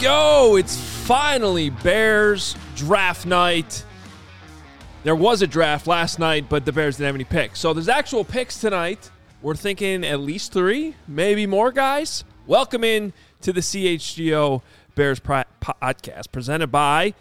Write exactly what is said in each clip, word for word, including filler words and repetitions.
go. It's finally Bears draft night. There was a draft last night, but the Bears didn't have any picks. So there's actual picks tonight. We're thinking at least three, maybe more, guys. Welcome in to the C H G O Bears podcast presented by,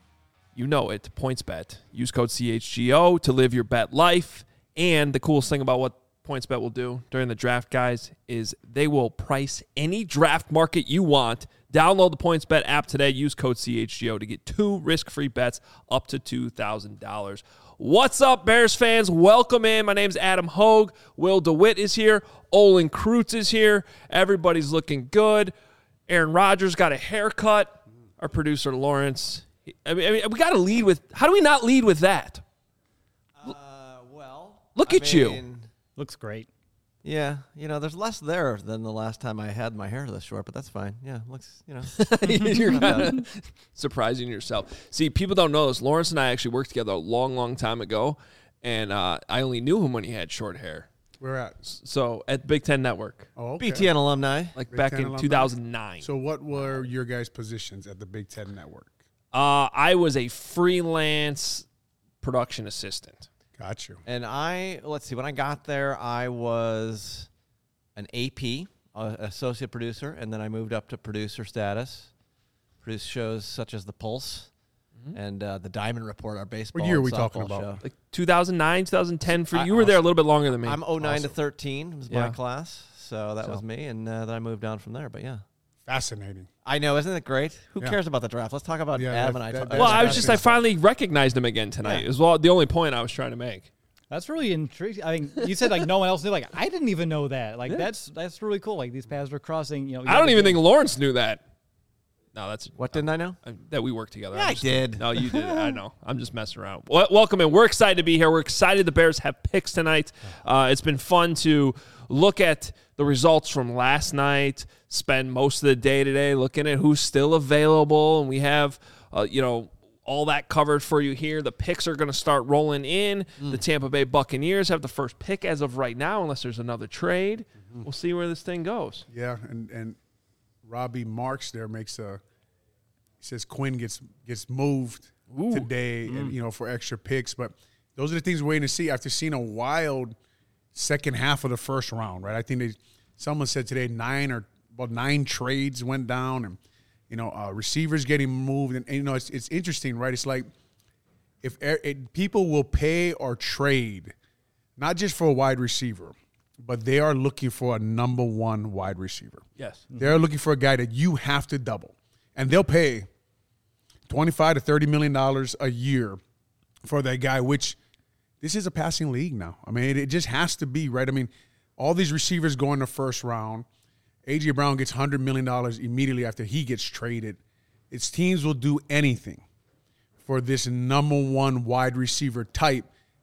you know it, PointsBet. Use code C H G O to live your bet life. And the coolest thing about what PointsBet will do during the draft, guys, is they will price any draft market you want. Download the PointsBet app today. Use code C H G O to get two risk-free bets up to two thousand dollars. What's up, Bears fans? Welcome in. My name's Adam Hogue. Will DeWitt is here. Olin Kreutz is here. Everybody's looking good. Aaron Rodgers got a haircut. Our producer, Lawrence. I mean, I mean we got to lead with – how do we not lead with that? Uh, well, Look I at you. mean, Looks great. Yeah, you know, there's less there than the last time I had my hair this short, but that's fine. Yeah, looks, you know. You're kind of surprising yourself. See, people don't know this. Lawrence and I actually worked together a long, long time ago, and uh, I only knew him when he had short hair. Where at? So at Big Ten Network, Oh, okay. B T N alumni. like Big back Ten in alumni? two thousand nine. So what were your guys' positions at the Big Ten Network? Uh, I was a freelance production assistant. Got you. And I, let's see, when I got there, I was an A P, uh, associate producer, and then I moved up to producer status. Produced shows such as The Pulse Mm-hmm. and uh, The Diamond Report, our baseball year are and we talking softball about? show. Like two thousand nine, two thousand ten for I- you. were there a little bit longer than me. I'm oh nine to Awesome. thirteen was Yeah. my class, so that So. was me, and uh, then I moved down from there, but yeah. Fascinating. I know, isn't it great? Who Yeah. cares about the draft? Let's talk about Yeah, Adam that- and I. that- talk- that- well, that's I was just, I fascinating. finally recognized him again tonight. Yeah. Is well the only point I was trying to make. That's really intriguing. I mean, you said like no one else knew. Like I didn't even know that. Like Yeah. that's that's really cool. Like these paths are crossing. You know, I don't even think Lawrence knew that. No, that's What didn't I know? uh, that we work together. Yeah, I'm I just- did. No, you did. I know. I'm just messing around. Well, welcome in. We're excited to be here. We're excited the Bears have picks tonight. Uh, it's been fun to look at the results from last night, spend most of the day today looking at who's still available, and we have, uh, you know, all that covered for you here. The picks are going to start rolling in. Mm. The Tampa Bay Buccaneers have the first pick as of right now, unless there's another trade. Mm-hmm. We'll see where this thing goes. Yeah, and, and Robbie Marks there makes a – he says Quinn gets gets moved Ooh. today and you know for extra picks. But those are the things we're waiting to see after seeing a wild second half of the first round, right? I think they someone said today nine or about nine trades went down and – You know, uh, receivers getting moved, and, and you know it's it's interesting, right? It's like if er, it, people will pay or trade, not just for a wide receiver, but they are looking for a number one wide receiver. Yes. They're looking for a guy that you have to double, and they'll pay twenty-five to thirty million dollars a year for that guy. Which this is a passing league now. I mean, it, it just has to be, right? I mean, all these receivers go in the first round. A J Brown gets one hundred million dollars immediately after he gets traded. Its teams will do anything for this number one wide receiver type.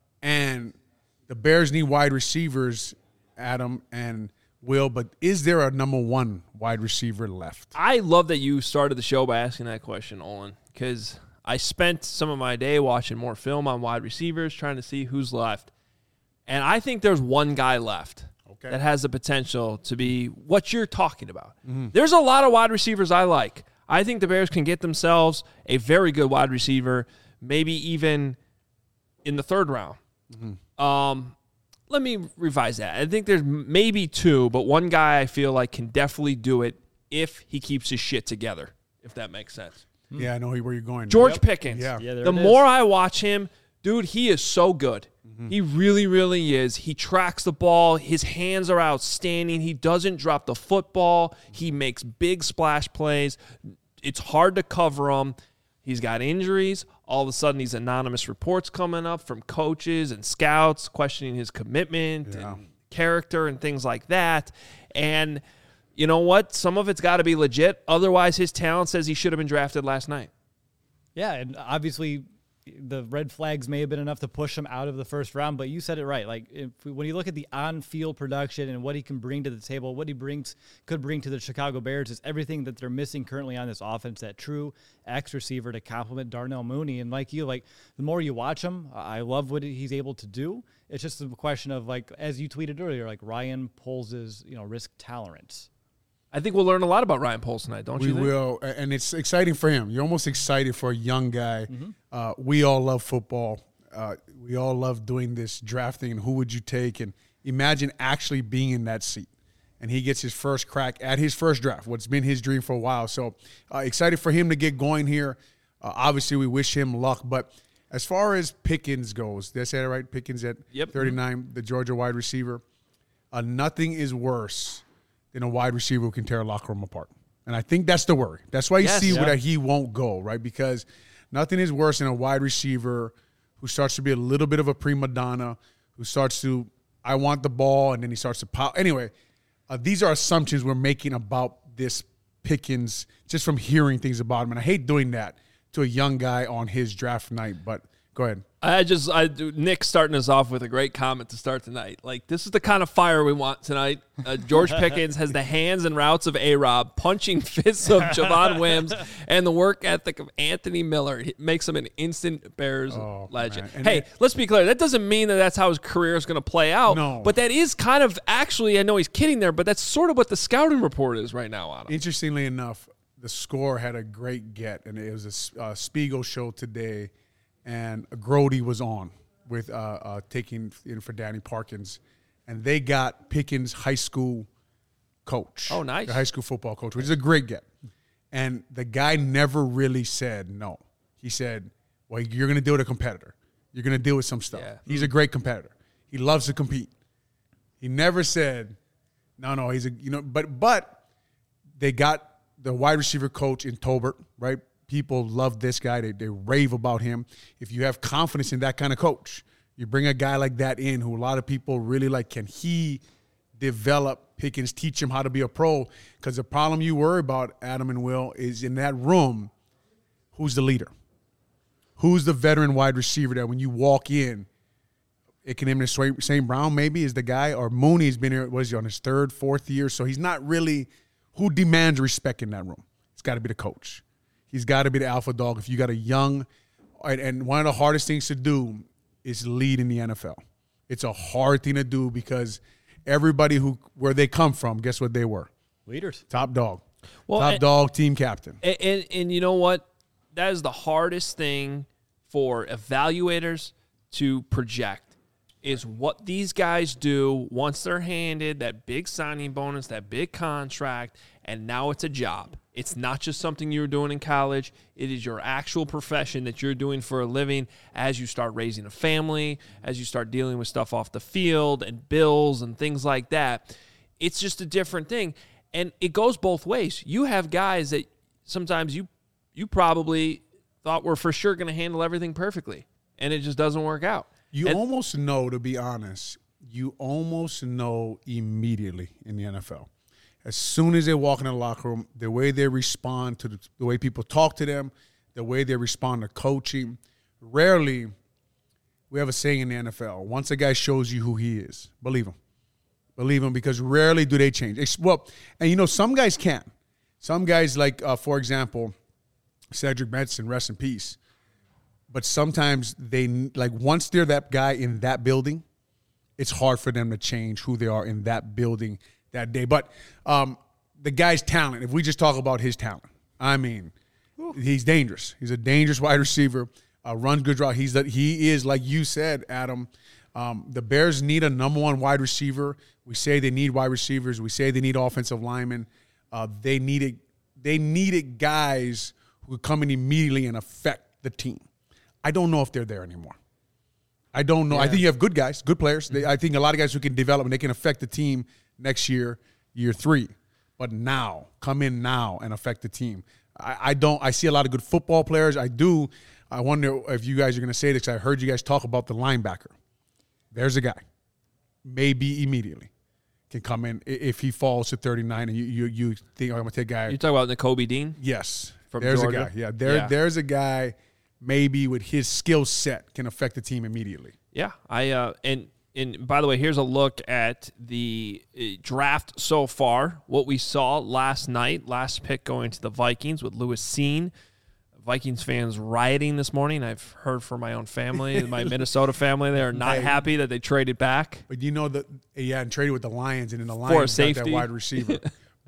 And the Bears need wide receivers, Adam and Will, but is there a number one wide receiver left? I love that you started the show by asking that question, Olin, because I spent some of my day watching more film on wide receivers, trying to see who's left. And I think there's one guy left. Okay. That has the potential to be what you're talking about. Mm-hmm. There's a lot of wide receivers I like. I think the Bears can get themselves a very good wide receiver, maybe even in the third round. Mm-hmm. Um, let me revise that. I think there's maybe two, but one guy I feel like can definitely do it if he keeps his shit together, if that makes sense. Yeah, I know where you're going. George Yep. Pickens. Yeah. Yeah, there the it is. more I watch him, dude, he is so good. Mm-hmm. He really, really is. He tracks the ball. His hands are outstanding. He doesn't drop the football. He makes big splash plays. It's hard to cover him. He's got injuries. All of a sudden, these anonymous reports coming up from coaches and scouts questioning his commitment Yeah. and character and things like that. And you know what? Some of it's got to be legit. Otherwise, his talent says he should have been drafted last night. Yeah, and obviously the red flags may have been enough to push him out of the first round, but you said it right. Like if, when you look at the on-field production and what he can bring to the table, what he brings could bring to the Chicago Bears is everything that they're missing currently on this offense, that true X receiver to complement Darnell Mooney. And like you, like the more you watch him, I love what he's able to do. It's just a question of, like, as you tweeted earlier, like Ryan Poles' you know risk tolerance. I think we'll learn a lot about Ryan Poles tonight, don't we you think? We will, and it's exciting for him. You're almost excited for a young guy. Mm-hmm. Uh, we all love football. Uh, we all love doing this drafting and who would you take, and imagine actually being in that seat. And he gets his first crack at his first draft, what's been his dream for a while. So uh, excited for him to get going here. Uh, obviously, we wish him luck. But as far as Pickens goes, did I say that right? Pickens at yep. thirty-nine, the Georgia wide receiver. Uh, nothing is worse than a wide receiver who can tear a locker room apart. And I think that's the worry. That's why you yes, see yeah. that he won't go, right? Because nothing is worse than a wide receiver who starts to be a little bit of a prima donna, who starts to, I want the ball, and then he starts to pop. Anyway, uh, these are assumptions we're making about this Pickens just from hearing things about him. And I hate doing that to a young guy on his draft night, but go ahead. I just, I do. Nick starting us off with a great comment to start tonight. Like, this is the kind of fire we want tonight. Uh, George Pickens has the hands and routes of A-Rob, punching fists of Javon Wims, and the work ethic of Anthony Miller. It makes him an instant Bears oh, legend. Hey, it, let's be clear. That doesn't mean that that's how his career is going to play out. No. But that is kind of, actually, I know he's kidding there, but that's sort of what the scouting report is right now on him. Interestingly enough, the Score had a great get, and it was a uh, Spiegel show today. And Grody was on with uh, uh, taking in for Danny Parkins, and they got Pickens' high school coach. Oh, nice. The high school football coach, which is a great get. And the guy never really said no. He said, well, you're going to deal with a competitor. You're going to deal with some stuff. Yeah. He's a great competitor. He loves to compete. He never said, no, no, he's a, you know, but, but they got the wide receiver coach in Tolbert, right? People love this guy. They, they rave about him. If you have confidence in that kind of coach, you bring a guy like that in who a lot of people really like. Can he develop Pickens, teach him how to be a pro? Because the problem you worry about, Adam and Will, is in that room, who's the leader? Who's the veteran wide receiver that when you walk in, it can name Saint Brown maybe is the guy, or Mooney's been here, what is he, on his third, fourth year? So he's not really who demands respect in that room. It's got to be the coach. He's got to be the alpha dog. If you got a young, and one of the hardest things to do is lead in the N F L. It's a hard thing to do because everybody who where they come from, guess what they were? Leaders. Top dog. Well, Top and, dog, team captain. And, and and you know what? That is the hardest thing for evaluators to project is what these guys do once they're handed that big signing bonus, that big contract, and now it's a job. It's not just something you're doing in college. It is your actual profession that you're doing for a living as you start raising a family, as you start dealing with stuff off the field and bills and things like that. It's just a different thing. And it goes both ways. You have guys that sometimes you you probably thought were for sure going to handle everything perfectly, and it just doesn't work out. You and, almost know, to be honest, you almost know immediately in the N F L. As soon as they walk in the locker room, the way they respond to the, the way people talk to them, the way they respond to coaching. Rarely, we have a saying in the N F L, once a guy shows you who he is, believe him. Believe him, because rarely do they change. Well, and you know, some guys can. Some guys, like, uh, for example, Cedric Benson, rest in peace. But sometimes they, like, once they're that guy in that building, it's hard for them to change who they are in that building that day. But um, the guy's talent, if we just talk about his talent, I mean, Ooh. he's dangerous. He's a dangerous wide receiver, uh, runs good route. He's the, he is, like you said, Adam, um, the Bears need a number one wide receiver. We say they need wide receivers. We say they need offensive linemen. Uh, they needed they needed guys who could come in immediately and affect the team. I don't know if they're there anymore. I don't know. Yeah. I think you have good guys, good players. They, I think a lot of guys who can develop and they can affect the team next year, year three. But now, come in now and affect the team. I, I don't. I see a lot of good football players. I do. I wonder if you guys are going to say this. I heard you guys talk about the linebacker. There's a guy, maybe immediately, can come in if he falls to thirty-nine and you you, you think, oh, I'm going to take a guy. You talk about Nakobe Dean? Yes. From there's Georgia? a guy. Yeah, there, yeah. There's a guy maybe with his skill set can affect the team immediately. Yeah. I uh, and and by the way, here's a look at the draft so far. What we saw last night, last pick going to the Vikings with Lewis Cine. Vikings fans rioting this morning. I've heard from my own family, my Minnesota family. They are not hey, happy that they traded back. But you know that, yeah, and traded with the Lions, and in the Lions got that wide receiver.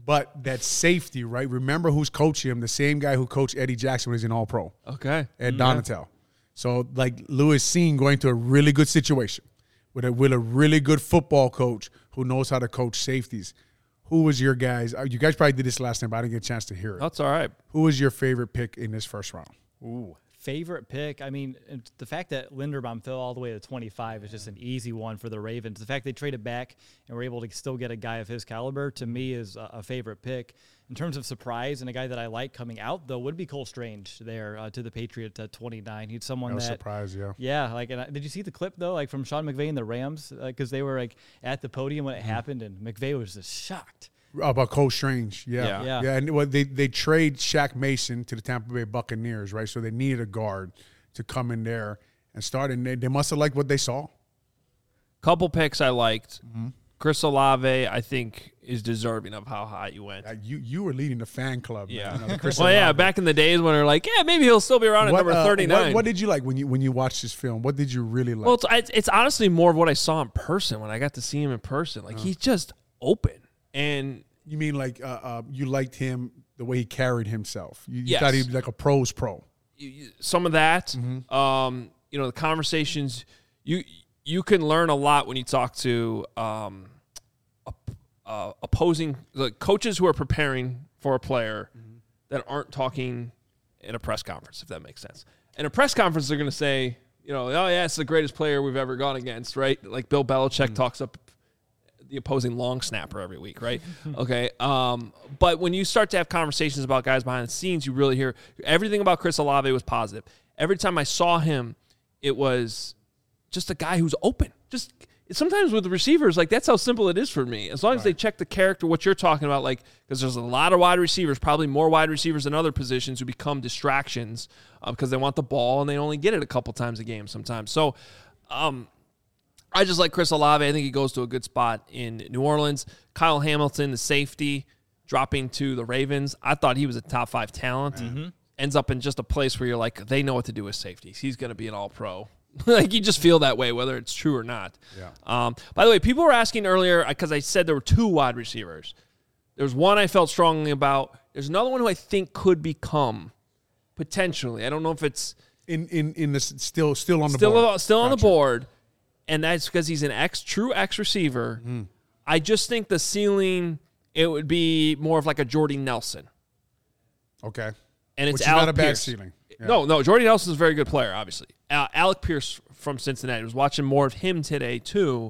But that safety, right? Remember who's coaching him? The same guy who coached Eddie Jackson when he's an All-Pro. Okay. Ed Donatel. So, like, Lewis Cine going to a really good situation with a, with a really good football coach who knows how to coach safeties. Who was your guys? You guys probably did this last time, but I didn't get a chance to hear it. That's all right. Who was your favorite pick in this first round? Ooh. Favorite pick? I mean, the fact that Linderbaum fell all the way to twenty-five is just an easy one for the Ravens. The fact they traded back and were able to still get a guy of his caliber, to me, is a, a favorite pick. In terms of surprise, and a guy that I like coming out, though, would be Cole Strange there uh, to the Patriots at twenty-nine. He's someone No that... surprise, yeah. Yeah, like, and I, did you see the clip, though, like from Sean McVay and the Rams? Because uh, they were, like, at the podium when it mm-hmm. happened, and McVay was just shocked. About Cole Strange, yeah. Yeah. yeah. yeah and well, they, they trade Shaq Mason to the Tampa Bay Buccaneers, right? So they needed a guard to come in there and start, and they, they must have liked what they saw. Couple picks I liked. Mm-hmm. Chris Olave, I think, is deserving of how high you went. Uh, you you were leading the fan club. Yeah. Man, Chris well, Olave. yeah, back in the days when they're like, yeah, maybe he'll still be around what, at number uh, thirty-nine. What, what did you like when you when you watched this film? What did you really like? Well, it's, it's honestly more of what I saw in person when I got to see him in person. Like, uh. he's just open. And you mean like uh, uh, you liked him the way he carried himself? You, you yes. thought he was like a pro's pro. Some of that, mm-hmm. um, you know, the conversations, you you can learn a lot when you talk to um, uh, opposing like coaches who are preparing for a player mm-hmm. that aren't talking in a press conference, if that makes sense. In a press conference, they're going to say, you know, oh, yeah, it's the greatest player we've ever gone against, right? Like Bill Belichick mm-hmm. talks up the opposing long snapper every week, right? Okay. Um, but when you start to have conversations about guys behind the scenes, you really hear everything about Chris Olave was positive. Every time I saw him, it was just a guy who's open. Just sometimes with the receivers, like that's how simple it is for me. As long right. as they check the character, what you're talking about, like because there's a lot of wide receivers, probably more wide receivers than other positions who become distractions uh, because they want the ball and they only get it a couple times a game sometimes. So, um, I just like Chris Olave. I think he goes to a good spot in New Orleans. Kyle Hamilton, the safety, dropping to the Ravens. I thought he was a top five talent. Mm-hmm. Ends up in just a place where you're like, they know what to do with safeties. He's going to be an all-pro. Like, you just feel that way, whether it's true or not. Yeah. Um, by the way, people were asking earlier, because I said there were two wide receivers. There's one I felt strongly about. There's another one who I think could become, potentially. I don't know if it's... In in in the still still on the still, board. Still on gotcha. the board. And that's because he's an X, true X receiver. Mm. I just think the ceiling, it would be more of like a Jordy Nelson. Okay. And it's Which is Alec not a bad Pierce. ceiling. Yeah. No, no, Jordy Nelson is a very good player, obviously. Uh, Alec Pierce from Cincinnati. I was watching more of him today, too.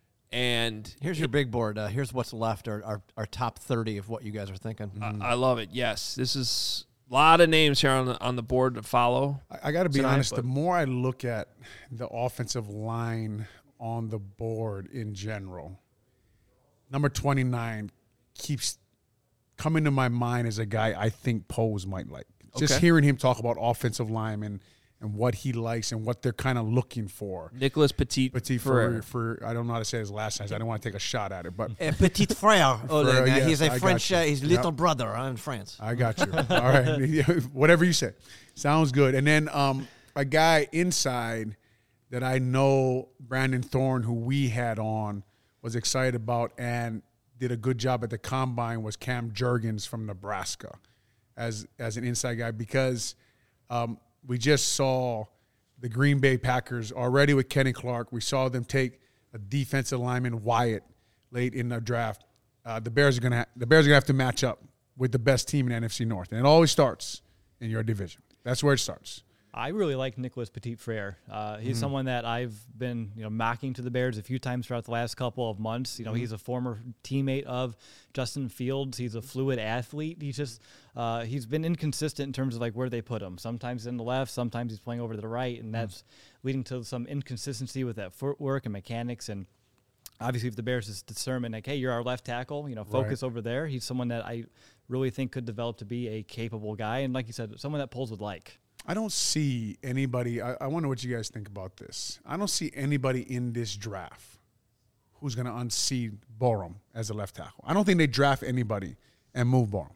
And here's your big board. Uh, here's what's left, our, our, our top thirty of what you guys are thinking. Mm. I, I love it, yes. This is... A lot of names here on the, on the board to follow. I, I got to be tonight, honest. but. The more I look at the offensive line on the board in general, number twenty-nine keeps coming to my mind as a guy I think Pose might like. Just Okay. hearing him talk about offensive linemen and what he likes and what they're kind of looking for. Nicholas Petit. Petit for, for I don't know how to say his last name. So I don't want to take a shot at it, but Uh, petit frère, Oleg. uh, Uh, yes, he's a I French, got uh, you. he's Yep. little brother uh, in France. I got you. All right. Whatever you say. Sounds good. And then um, a guy inside that I know Brandon Thorne, who we had on, was excited about and did a good job at the combine was Cam Jurgens from Nebraska as as an inside guy because um, we just saw the Green Bay Packers already with Kenny Clark. We saw them take a defensive lineman, Wyatt, late in the draft. Uh, the Bears are gonna ha- the Bears are gonna have to match up with the best team in the N F C North, and it always starts in your division. That's where it starts. I really like Nicholas Petit-Frere. Uh, he's mm-hmm. someone that I've been, you know, mocking to the Bears a few times throughout the last couple of months. You know, mm-hmm. he's a former teammate of Justin Fields. He's a fluid athlete. He's just, uh, he's been inconsistent in terms of like where they put him. Sometimes in the left, sometimes he's playing over to the right, and that's mm-hmm. leading to some inconsistency with that footwork and mechanics. And obviously, if the Bears is determined, like, hey, you're our left tackle, you know, focus right. over there. He's someone that I really think could develop to be a capable guy, and like you said, someone that Poles would like. I don't see anybody. I, I wonder what you guys think about this. I don't see anybody in this draft who's going to unseat Borum as a left tackle. I don't think they draft anybody and move Borum.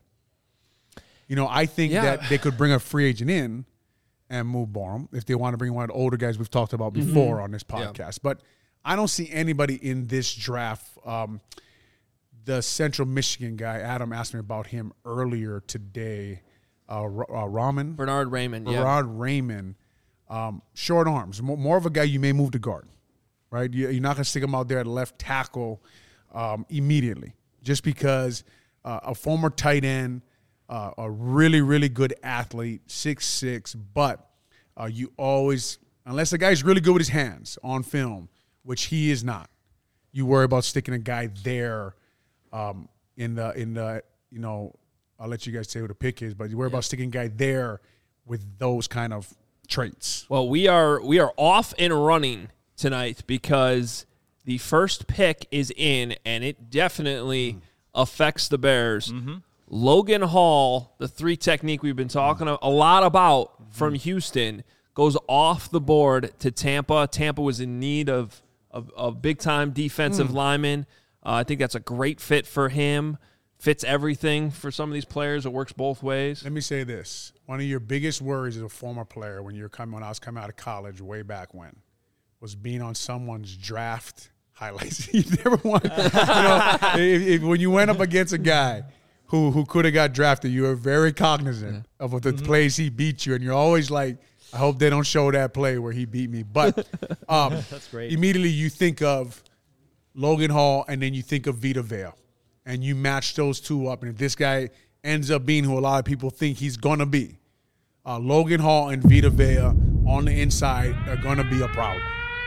You know, I think yeah. that they could bring a free agent in and move Borum if they want to bring one of the older guys we've talked about before mm-hmm. on this podcast. Yeah. But I don't see anybody in this draft um, the Central Michigan guy, Adam asked me about him earlier today. Uh, uh, Raman? Bernard Raymond, yeah. Bernard Raymond. Um, short arms. More, more of a guy you may move to guard, right? You, you're not going to stick him out there at left tackle um, immediately just because uh, a former tight end, uh, a really, really good athlete, six six, but uh, you always, unless the guy's really good with his hands on film, which he is not, you worry about sticking a guy there um, in the, in the, you know, I'll let you guys say who the pick is, but you worry yeah. about sticking a guy there with those kind of traits. Well, we are we are off and running tonight because the first pick is in, and it definitely mm. affects the Bears. Mm-hmm. Logan Hall, the three technique we've been talking mm. a lot about mm-hmm. from Houston, goes off the board to Tampa. Tampa was in need of of, of big-time defensive mm. linemen. Uh, I think that's a great fit for him. Fits everything for some of these players. It works both ways. Let me say this. One of your biggest worries as a former player when you're coming, when I was coming out of college way back when, was being on someone's draft highlights. You never want, you know, if, if, when you went up against a guy who who could have got drafted, you were very cognizant yeah. of the mm-hmm. plays he beat you, and you're always like, I hope they don't show that play where he beat me. But um, that's great. Immediately you think of Logan Hall, and then you think of Vita Vea, and you match those two up. And if this guy ends up being who a lot of people think he's going to be, uh, Logan Hall and Vita Vea on the inside are going to be a problem.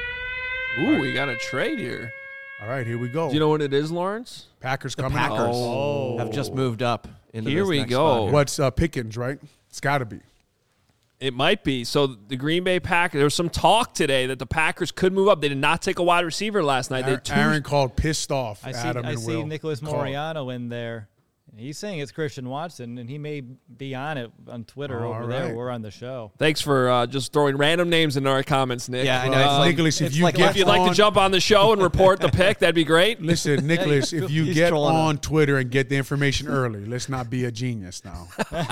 Ooh, right. we got a trade here. All right, here we go. Do you know what it is, Lawrence? Packers the coming Packers out. oh. have just moved up into here this we next go. spot here. What's uh, Pickens, right? It's got to be. It might be. So the Green Bay Packers, there was some talk today that the Packers could move up. They did not take a wide receiver last night. Aaron, they Aaron called pissed off. I see, Adam I and see Will Nicholas called. Mouriano in there. He's saying it's Christian Watson, and he may be on it on Twitter All over right. there. We're on the show. Thanks for uh, just throwing random names into our comments, Nick. Yeah, I know. Uh, It's like, Nicholas, if it's you like get if you'd like on, to jump on the show and report the pick, that'd be great. Listen, Nicholas, Yeah, if you he's get trolling on us. Twitter and get the information early, let's not be a genius now.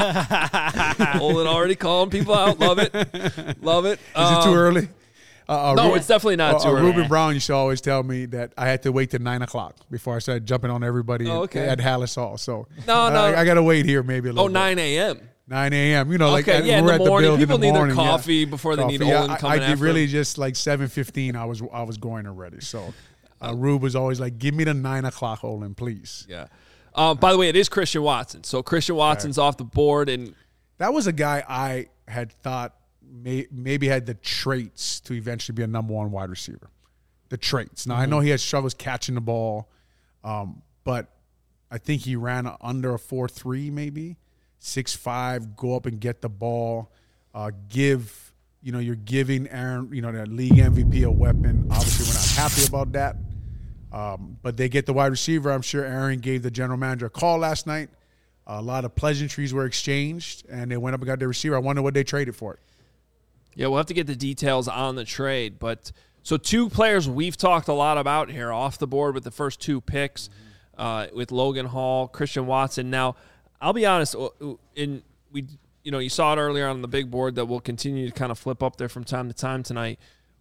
Olin already calling people out. Love it. Love it. Is it too early? Uh, uh, No, Ru- it's definitely not uh, too uh, early. Ruben Brown used to always tell me that I had to wait till nine o'clock before I started jumping on everybody Oh, at- okay. at Hallis Hall. So No, no. I, I got to wait here maybe a little Oh, bit. nine a.m. nine a.m. You know, like Okay, at- yeah, in we're the at morning. the build People in the need their morning, yeah. coffee before they need Coffee. Yeah, Olin I- coming I, after really them. just like seven fifteen I was I was going already. So uh, Rube was always like, give me the nine o'clock, Olin, please. Yeah. Um, by the way, it is Christian Watson. So Christian Watson's off the board, and That was a guy I had thought may, maybe had the traits to eventually be a number one wide receiver. The traits. Now, mm-hmm. I know he had struggles catching the ball, um, but I think he ran under a four three maybe, six five, go up and get the ball, uh, give, you know, you're giving Aaron, you know, the league M V P a weapon. Obviously, we're not happy about that, um, but they get the wide receiver. I'm sure Aaron gave the general manager a call last night. A lot of pleasantries were exchanged, and they went up and got their receiver. I wonder what they traded for it. yeah, we'll have to get the details on the trade. But so two players we've talked a lot about here off the board with the first two picks, mm-hmm. uh, with Logan Hall, Christian Watson. Now, I'll be honest, in we you know you saw it earlier on the big board that we'll continue to kind of flip up there from time to time tonight.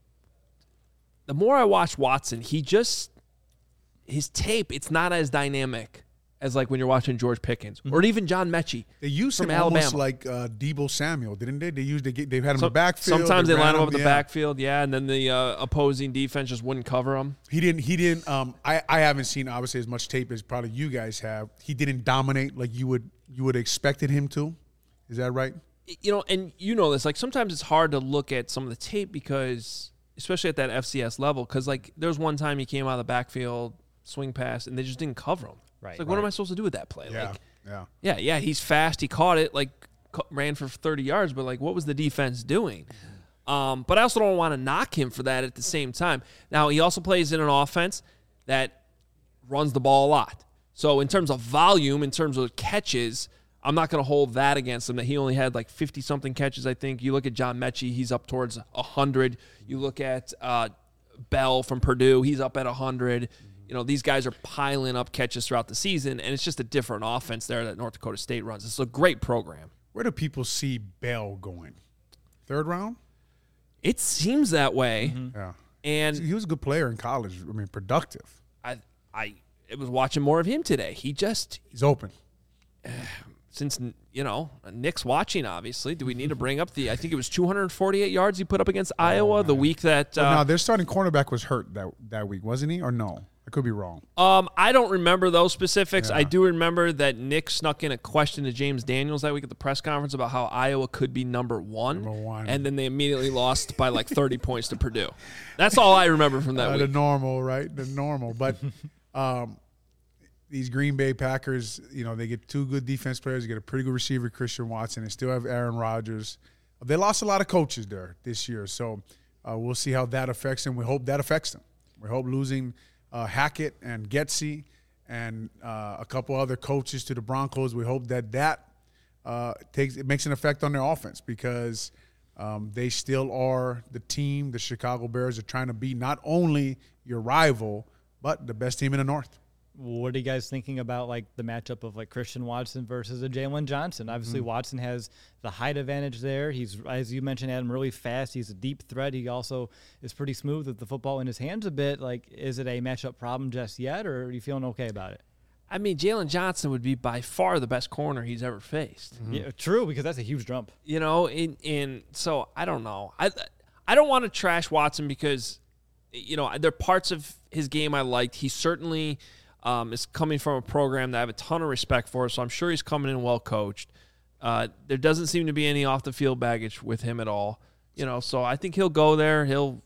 The more I watch Watson, he just his tape, it's not as dynamic as like when you're watching George Pickens or even John Mechie. They used from him Alabama. almost like uh, Debo Samuel, didn't they? They used they they've had him So- in the backfield. Sometimes they, ran line him up in the yeah. backfield, yeah, and then the uh, opposing defense just wouldn't cover him. He didn't. He didn't. Um, I I haven't seen obviously as much tape as probably you guys have. He didn't dominate like you would you would have expected him to. Is that right? You know, and you know this, like sometimes it's hard to look at some of the tape because, especially at that F C S level, because like there was one time he came out of the backfield, swing pass, and they just didn't cover him. Right. It's like, what Right. am I supposed to do with that play? Yeah. Like, yeah. yeah, yeah, he's fast. He caught it, like ca- ran for thirty yards, but like, what was the defense doing? Um, but I also don't want to knock him for that at the same time. Now, he also plays in an offense that runs the ball a lot. So in terms of volume, in terms of catches, I'm not going to hold that against him, that he only had like fifty-something catches, I think. You look at John Mechie, he's up towards one hundred. You look at uh, Bell from Purdue, he's up at one hundred. You know, these guys are piling up catches throughout the season, and it's just a different offense there that North Dakota State runs. It's a great program. Where do people see Bell going? Third round? It seems that way. Yeah. And he was a good player in college. I mean, productive. I, I, I was watching more of him today. He just he's open. Uh, since you know Nick's watching, obviously, do we need to bring up the? I think it was two hundred forty-eight yards he put up against Iowa oh, the week that. Uh, well, now their starting cornerback was hurt that that week, wasn't he? Or no? I could be wrong. Um, I don't remember those specifics. Yeah. I do remember that Nick snuck in a question to James Daniels that week at the press conference about how Iowa could be number one, Number one. and then they immediately lost by like thirty points to Purdue. That's all I remember from that uh, week. The normal, right? The normal. But um, these Green Bay Packers, you know, they get two good defense players. They get a pretty good receiver, Christian Watson. They still have Aaron Rodgers. They lost a lot of coaches there this year, so uh, we'll see how that affects them. We hope that affects them. We hope losing – Uh, Hackett and Getsy and uh, a couple other coaches to the Broncos. We hope that that uh, takes it makes an effect on their offense because um, they still are the team. The Chicago Bears are trying to be not only your rival but the best team in the North. What are you guys thinking about, like, the matchup of, like, Christian Watson versus a Jalen Johnson? Obviously, mm-hmm. Watson has the height advantage there. He's, as you mentioned, Adam, really fast. He's a deep threat. He also is pretty smooth with the football in his hands a bit. Like, is it a matchup problem just yet, or are you feeling okay about it? I mean, Jalen Johnson would be by far the best corner he's ever faced. Mm-hmm. Yeah, true, because that's a huge jump. You know, in in so I don't know. I I don't want to trash Watson because, you know, there are parts of his game I liked. He certainly – Um, is coming from a program that I have a ton of respect for, so I'm sure he's coming in well coached. Uh, there doesn't seem to be any off the field baggage with him at all, you know. So I think he'll go there. He'll,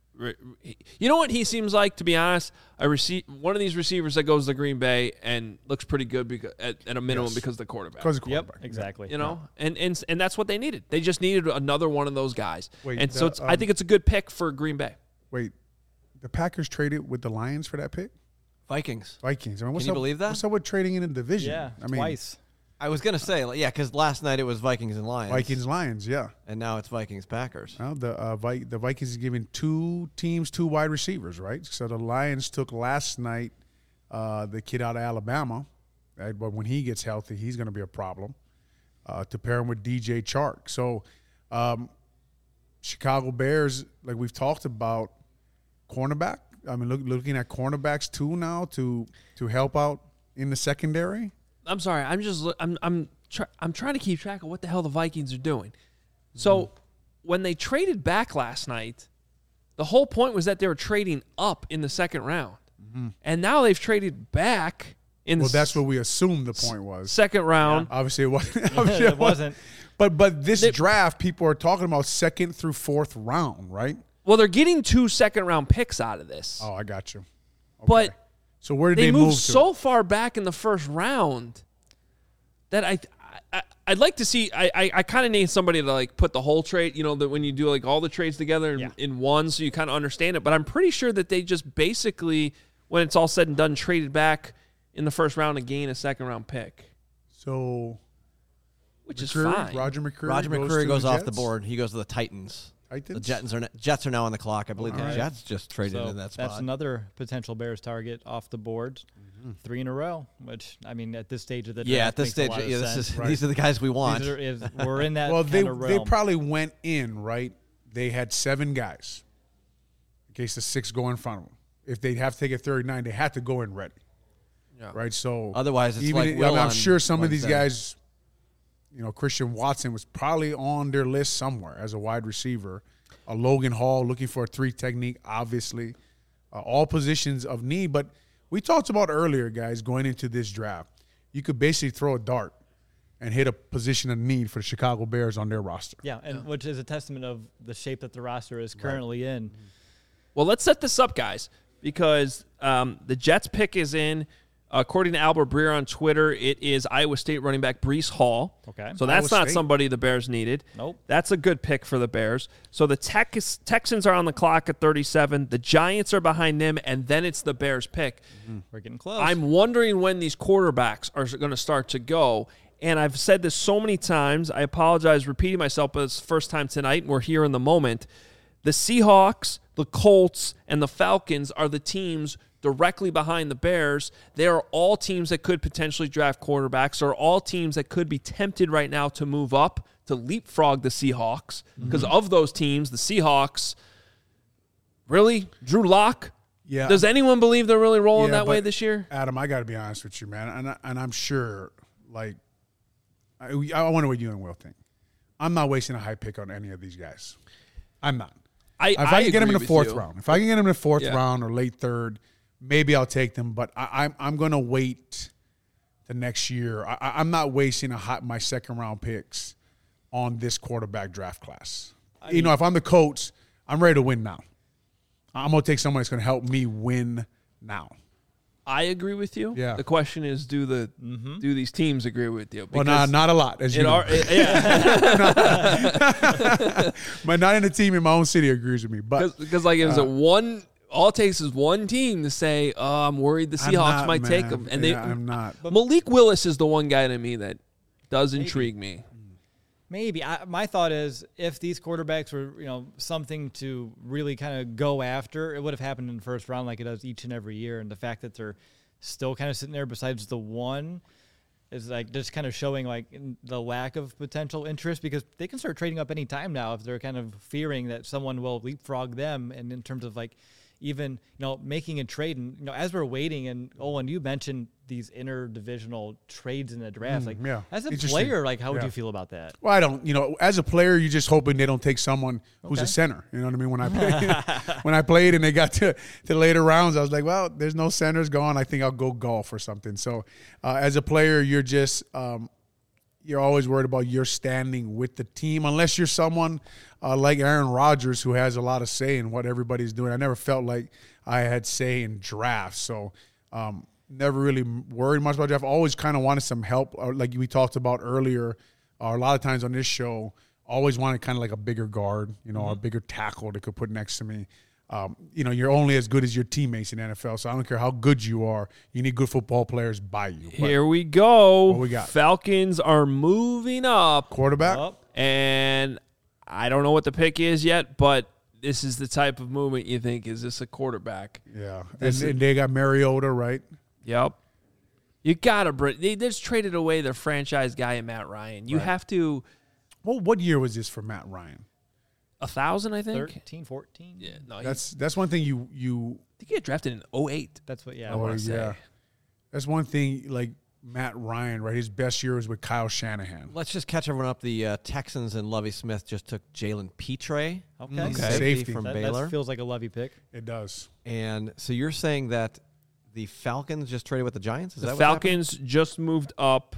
you know what he seems like, to be honest, a receive one of these receivers that goes to Green Bay and looks pretty good because, at, at a minimum yes. because of the quarterback. Because of the quarterback, yep, exactly. You know, yeah. and and and that's what they needed. They just needed another one of those guys. Wait, and the, so it's, um, I think it's a good pick for Green Bay. Wait, the Packers traded with the Lions for that pick? Vikings. Vikings. I mean, what's Can you up, believe that? What's up with trading in a division? Yeah, I mean, twice. I was going to say, yeah, because last night it was Vikings and Lions. Vikings, Lions, yeah. And now it's Vikings, Packers. Well, the uh, Vi- the Vikings is giving two teams two wide receivers, right? So the Lions took last night uh, the kid out of Alabama, right? But when he gets healthy, he's going to be a problem uh, to pair him with D J Chark. So um, Chicago Bears, like we've talked about, cornerback. I mean, look, looking at cornerbacks too now to to help out in the secondary. I'm sorry. I'm just I'm I'm try, I'm trying to keep track of what the hell the Vikings are doing. So mm-hmm. when they traded back last night, the whole point was that they were trading up in the second round, mm-hmm. and now they've traded back in. Well, the that's what we assumed the point was. Second round. Yeah. Obviously, it wasn't. Obviously it wasn't. But but this they, draft, people are talking about second through fourth round, right? Well, they're getting two second-round picks out of this. Oh, I got you. Okay. But so where did they, they moved move to? so far back in the first round that I, I I'd like to see. I I, I kind of need somebody to like put the whole trade. You know, that when you do like all the trades together in, yeah. in one, so you kind of understand it. But I'm pretty sure that they just basically, when it's all said and done, traded back in the first round to gain a second-round pick. So, which McCreary, is fine. Roger McCreary. Roger goes McCreary to goes the off Jets? the board. He goes to the Titans. Titans? The Jets are Jets are now on the clock. I believe All the right. Jets just traded So in that spot. that's another potential Bears target off the board, mm-hmm. three in a row. Which I mean, at this stage of the draft, yeah, at this makes stage, a lot of yeah, this sense. is Right. these are the guys we want. These are, is, we're in that Well, they kind of they realm. probably went in, right? They had seven guys in case the six go in front of them. If they have to take a thirty-nine, they had to go in ready. Yeah. Right? So Otherwise, it's even like I mean, Will I'm on sure some of these Wednesday. guys, you know, Christian Watson was probably on their list somewhere as a wide receiver. A Logan Hall looking for a three technique, obviously. Uh, all positions of need. But we talked about earlier, guys, going into this draft. You could basically throw a dart and hit a position of need for the Chicago Bears on their roster. Yeah, and which is a testament of the shape that the roster is currently right. in. Well, let's set this up, guys, because um, the Jets pick is in. According to Albert Breer on Twitter, it is Iowa State running back Breece Hall. Okay. So that's Iowa not State. somebody the Bears needed. Nope. That's a good pick for the Bears. So the Tex- Texans are on the clock at thirty-seven. The Giants are behind them, and then it's the Bears pick. Mm-hmm. We're getting close. I'm wondering when these quarterbacks are going to start to go. And I've said this so many times. I apologize repeating myself, but it's the first time tonight, and we're here in the moment. The Seahawks, the Colts, and the Falcons are the teams directly behind the Bears. They are all teams that could potentially draft quarterbacks, or all teams that could be tempted right now to move up to leapfrog the Seahawks. Because mm-hmm. of those teams, the Seahawks, really, Drew Lock, Yeah. Does anyone believe they're really rolling Yeah, that way but, this year? Adam, I got to be honest with you, man, and I, and I'm sure, like, I, I wonder what you and Will think. I'm not wasting a high pick on any of these guys. I'm not. I, if I, I can get them in agree the fourth with you. round, if I can get them in the fourth Yeah. round or late third, maybe I'll take them. But I, I'm I'm going to wait the next year. I, I'm not wasting a hot my second round picks on this quarterback draft class. I you mean, know, if I'm the coach, I'm ready to win now. I'm going to take someone that's going to help me win now. I agree with you. Yeah. The question is, do the mm-hmm. do these teams agree with you? Well, not not a lot, as you know. Are, it, yeah. But not in the team in my own city agrees with me. But because like, is uh, it one? All it takes is one team to say, "Oh, I'm worried the Seahawks not, might man. take them," and yeah, they. I'm not. But Malik Willis is the one guy to me that does Maybe. intrigue me. Maybe. I, my thought is if these quarterbacks were, you know, something to really kind of go after, it would have happened in the first round like it does each and every year. And the fact that they're still kind of sitting there besides the one is like just kind of showing like the lack of potential interest, because they can start trading up any time now if they're kind of fearing that someone will leapfrog them. And in terms of like even, you know, making a trade, and, you know, as we're waiting, and Olin, you mentioned these interdivisional trades in the draft. Mm, like yeah. as a player, like how would yeah. you feel about that? Well, I don't, you know, as a player, you're just hoping they don't take someone who's Okay. a center. You know what I mean? When I played, when I played and they got to, to later rounds, I was like, well, there's no centers going. I think I'll go golf or something. So uh, as a player, you're just, um, you're always worried about your standing with the team, unless you're someone uh, like Aaron Rodgers, who has a lot of say in what everybody's doing. I never felt like I had say in drafts. So, um, never really worried much about draft. Always kind of wanted some help, or like we talked about earlier, or a lot of times on this show, always wanted kind of like a bigger guard, you know, mm-hmm. a bigger tackle they could put next to me. Um, you know, you're only as good as your teammates in the N F L, so I don't care how good you are. You need good football players by you. But Here we go. What we got? Falcons are moving up. Quarterback? Up. And I don't know what the pick is yet, but this is the type of movement you think, is this a quarterback? Yeah. And, This is- and they got Mariota, right? Yep. You got to bring – they just traded away their franchise guy in Matt Ryan. You Right. have to Well, what year was this for Matt Ryan? – a thousand, I think? thirteen, fourteen Yeah. No, That's that's one thing you you I think he got drafted in oh eight. That's what, yeah. I wanna or, say. yeah. That's one thing, like Matt Ryan, right? His best year was with Kyle Shanahan. Let's just catch everyone up. The uh, Texans and Lovie Smith just took Jalen Petre, Okay. Okay. safety, Safety. from That, Baylor. that feels like a Lovey pick. It does. And so you're saying that the Falcons just traded with the Giants? Is The that what happened? Falcons just moved up.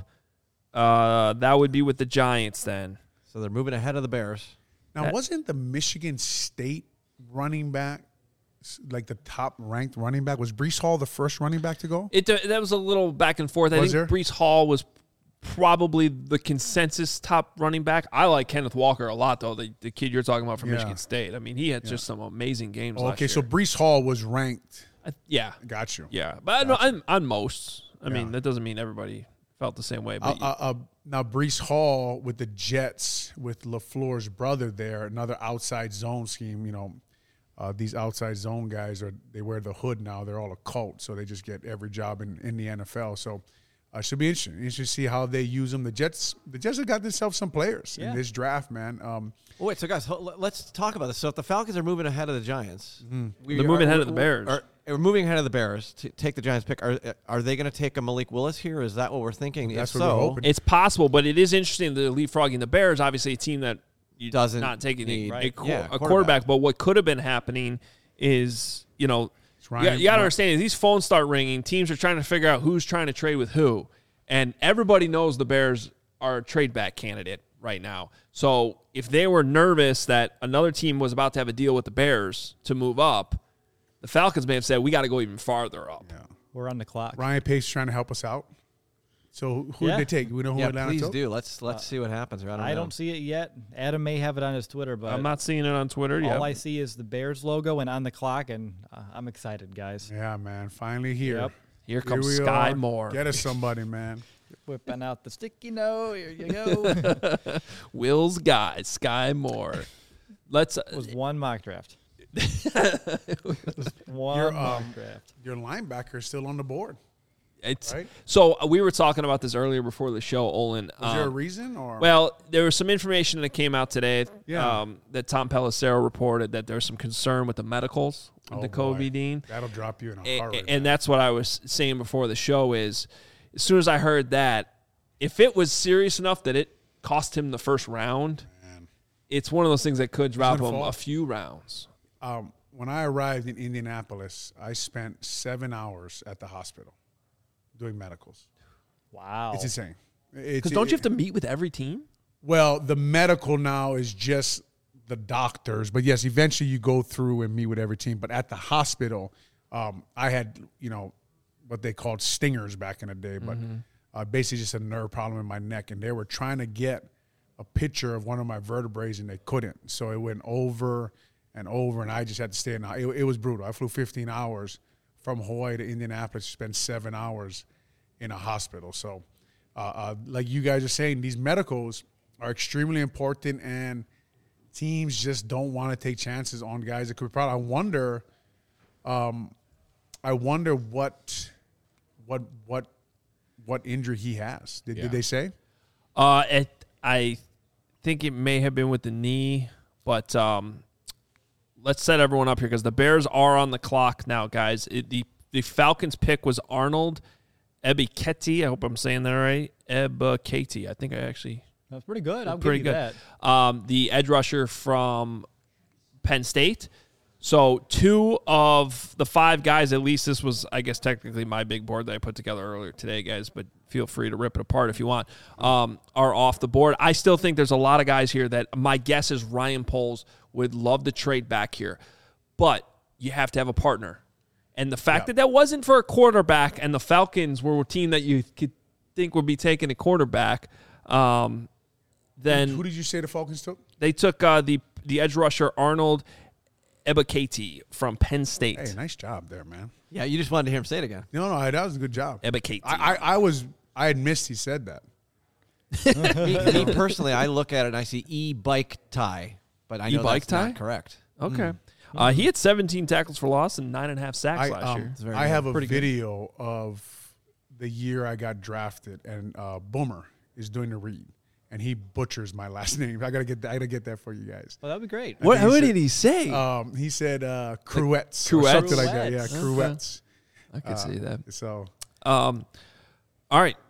Uh, that would be with the Giants then. So they're moving ahead of the Bears. Now, That- wasn't the Michigan State running back s- like the top ranked running back? Was Brees Hall the first running back to go? It uh, that was a little back and forth. I Was think there? Brees Hall was probably the consensus top running back. I like Kenneth Walker a lot, though, the, the kid you're talking about from Yeah. Michigan State. I mean, he had just some amazing games Oh, last okay, year. so Brees Hall was ranked. I, yeah, Got you. yeah. But I know on, on most. I Yeah. mean, that doesn't mean everybody felt the same way. Uh, But uh, uh, now, Brees Hall with the Jets, with LaFleur's brother there, another outside zone scheme. You know, uh, these outside zone guys, are they wear the hood now. They're all a cult, so they just get every job in, in the N F L. So uh, should be interesting. Interesting to see how they use them. The Jets, the Jets have got themselves some players Yeah. in this draft, man. Um, Oh, wait, so guys, ho- let's talk about this. So if the Falcons are moving ahead of the Giants, we They're moving are- ahead of the Bears. Are, are moving ahead of the Bears to take the Giants pick. Are are they going to take a Malik Willis here? Is that what we're thinking? That's if what we're so, hoping. it's possible, but it is interesting that leapfrogging the Bears, obviously a team that you Doesn't not taking need- a, a, right. qu- Yeah, a quarterback. quarterback. But what could have been happening is, you know, It's you, Ryan- got- you got to understand is these phones start ringing. Teams are trying to figure out who's trying to trade with who, and everybody knows the Bears are a trade back candidate right now. So if they were nervous that another team was about to have a deal with the Bears to move up, the Falcons may have said, we got to go even farther up. yeah. We're on the clock. Ryan Pace trying to help us out. So who Yeah. did they take? We know who yeah, Atlanta please took? do. Let's let's see what happens. I don't, I know. don't see it yet. Adam may have it on his Twitter, but I'm not seeing it on Twitter yet. all I see is the Bears logo and on the clock, and uh, I'm excited, guys. Yeah, man. Finally here. Yep. Here comes we Sky are. Moore. Get us somebody, man. Whipping out the sticky note. Here you go. Will's guy, Sky Moore. Let's. Uh, It was one mock draft. One Your, mock um, draft. Your linebacker is still on the board. It's right? So uh, we were talking about this earlier before the show, Olin. Was um, there a reason? Or Well, there was some information that came out today Yeah. um, that Tom Pelissero reported that there's some concern with the medicals with Oh, the boy. Covidine. That'll drop you in a A- heartbeat. and that's what I was saying before the show is as soon as I heard that, if it was serious enough that it cost him the first round, Man. it's one of those things that could drop gonna him fall. a few rounds. Um, when I arrived in Indianapolis, I spent seven hours at the hospital doing medicals. Wow. It's insane. Because don't you have to meet with every team? Well, the medical now is just the doctors, but yes, eventually you go through and meet with every team. But at the hospital, um, I had, you know, what they called stingers back in the day, but Mm-hmm. uh, basically just a nerve problem in my neck. And they were trying to get a picture of one of my vertebrae, and they couldn't. So it went over and over, and I just had to stay in. It, it was brutal. I flew fifteen hours from Hawaii to Indianapolis, spent seven hours in a hospital. So uh, uh, like you guys are saying, these medicals are extremely important, and teams just don't want to take chances on guys that could be proud. I wonder, um, I wonder what, what, what, what injury he has. Did, Yeah. did they say? Uh, it, I think it may have been with the knee, but um, let's set everyone up here because the Bears are on the clock now, guys. It, the the Falcons pick was Arnold Ebiketie. I hope I'm saying that right. Ebiketie. I think I actually That's pretty good. I'll pretty give you good. that. Um, the edge rusher from Penn State. So two of the five guys, at least this was, I guess, technically my big board that I put together earlier today, guys, but feel free to rip it apart if you want, um, are off the board. I still think there's a lot of guys here that my guess is Ryan Poles would love to trade back here, but you have to have a partner. And the fact Yeah. that that wasn't for a quarterback and the Falcons were a team that you could think would be taking a quarterback, um, then Who did you say the Falcons took? they took uh, the the edge rusher Arnold Ebiketie from Penn State. Hey, nice job there, man. Yeah, you just wanted to hear him say it again. No, no, that was a good job. Ebiketie. I, I, I was, I had missed he said that. me, me personally, I look at it and I see e-bike tie, but I know E-bike that's not tie? correct. Okay. Uh, he had seventeen tackles for loss and nine and a half sacks I, last um, year. very I good. have a Pretty good. video of the year I got drafted, and uh, Boomer is doing the read, and he butchers my last name. I gotta get that. I gotta get that for you guys. Well, that'd be great. What, I think what he did he say? Um, he said uh, Cruettes, Cruettes? or something like that. Yeah, Cruettes. Cruettes. I could see that. So Um, all right.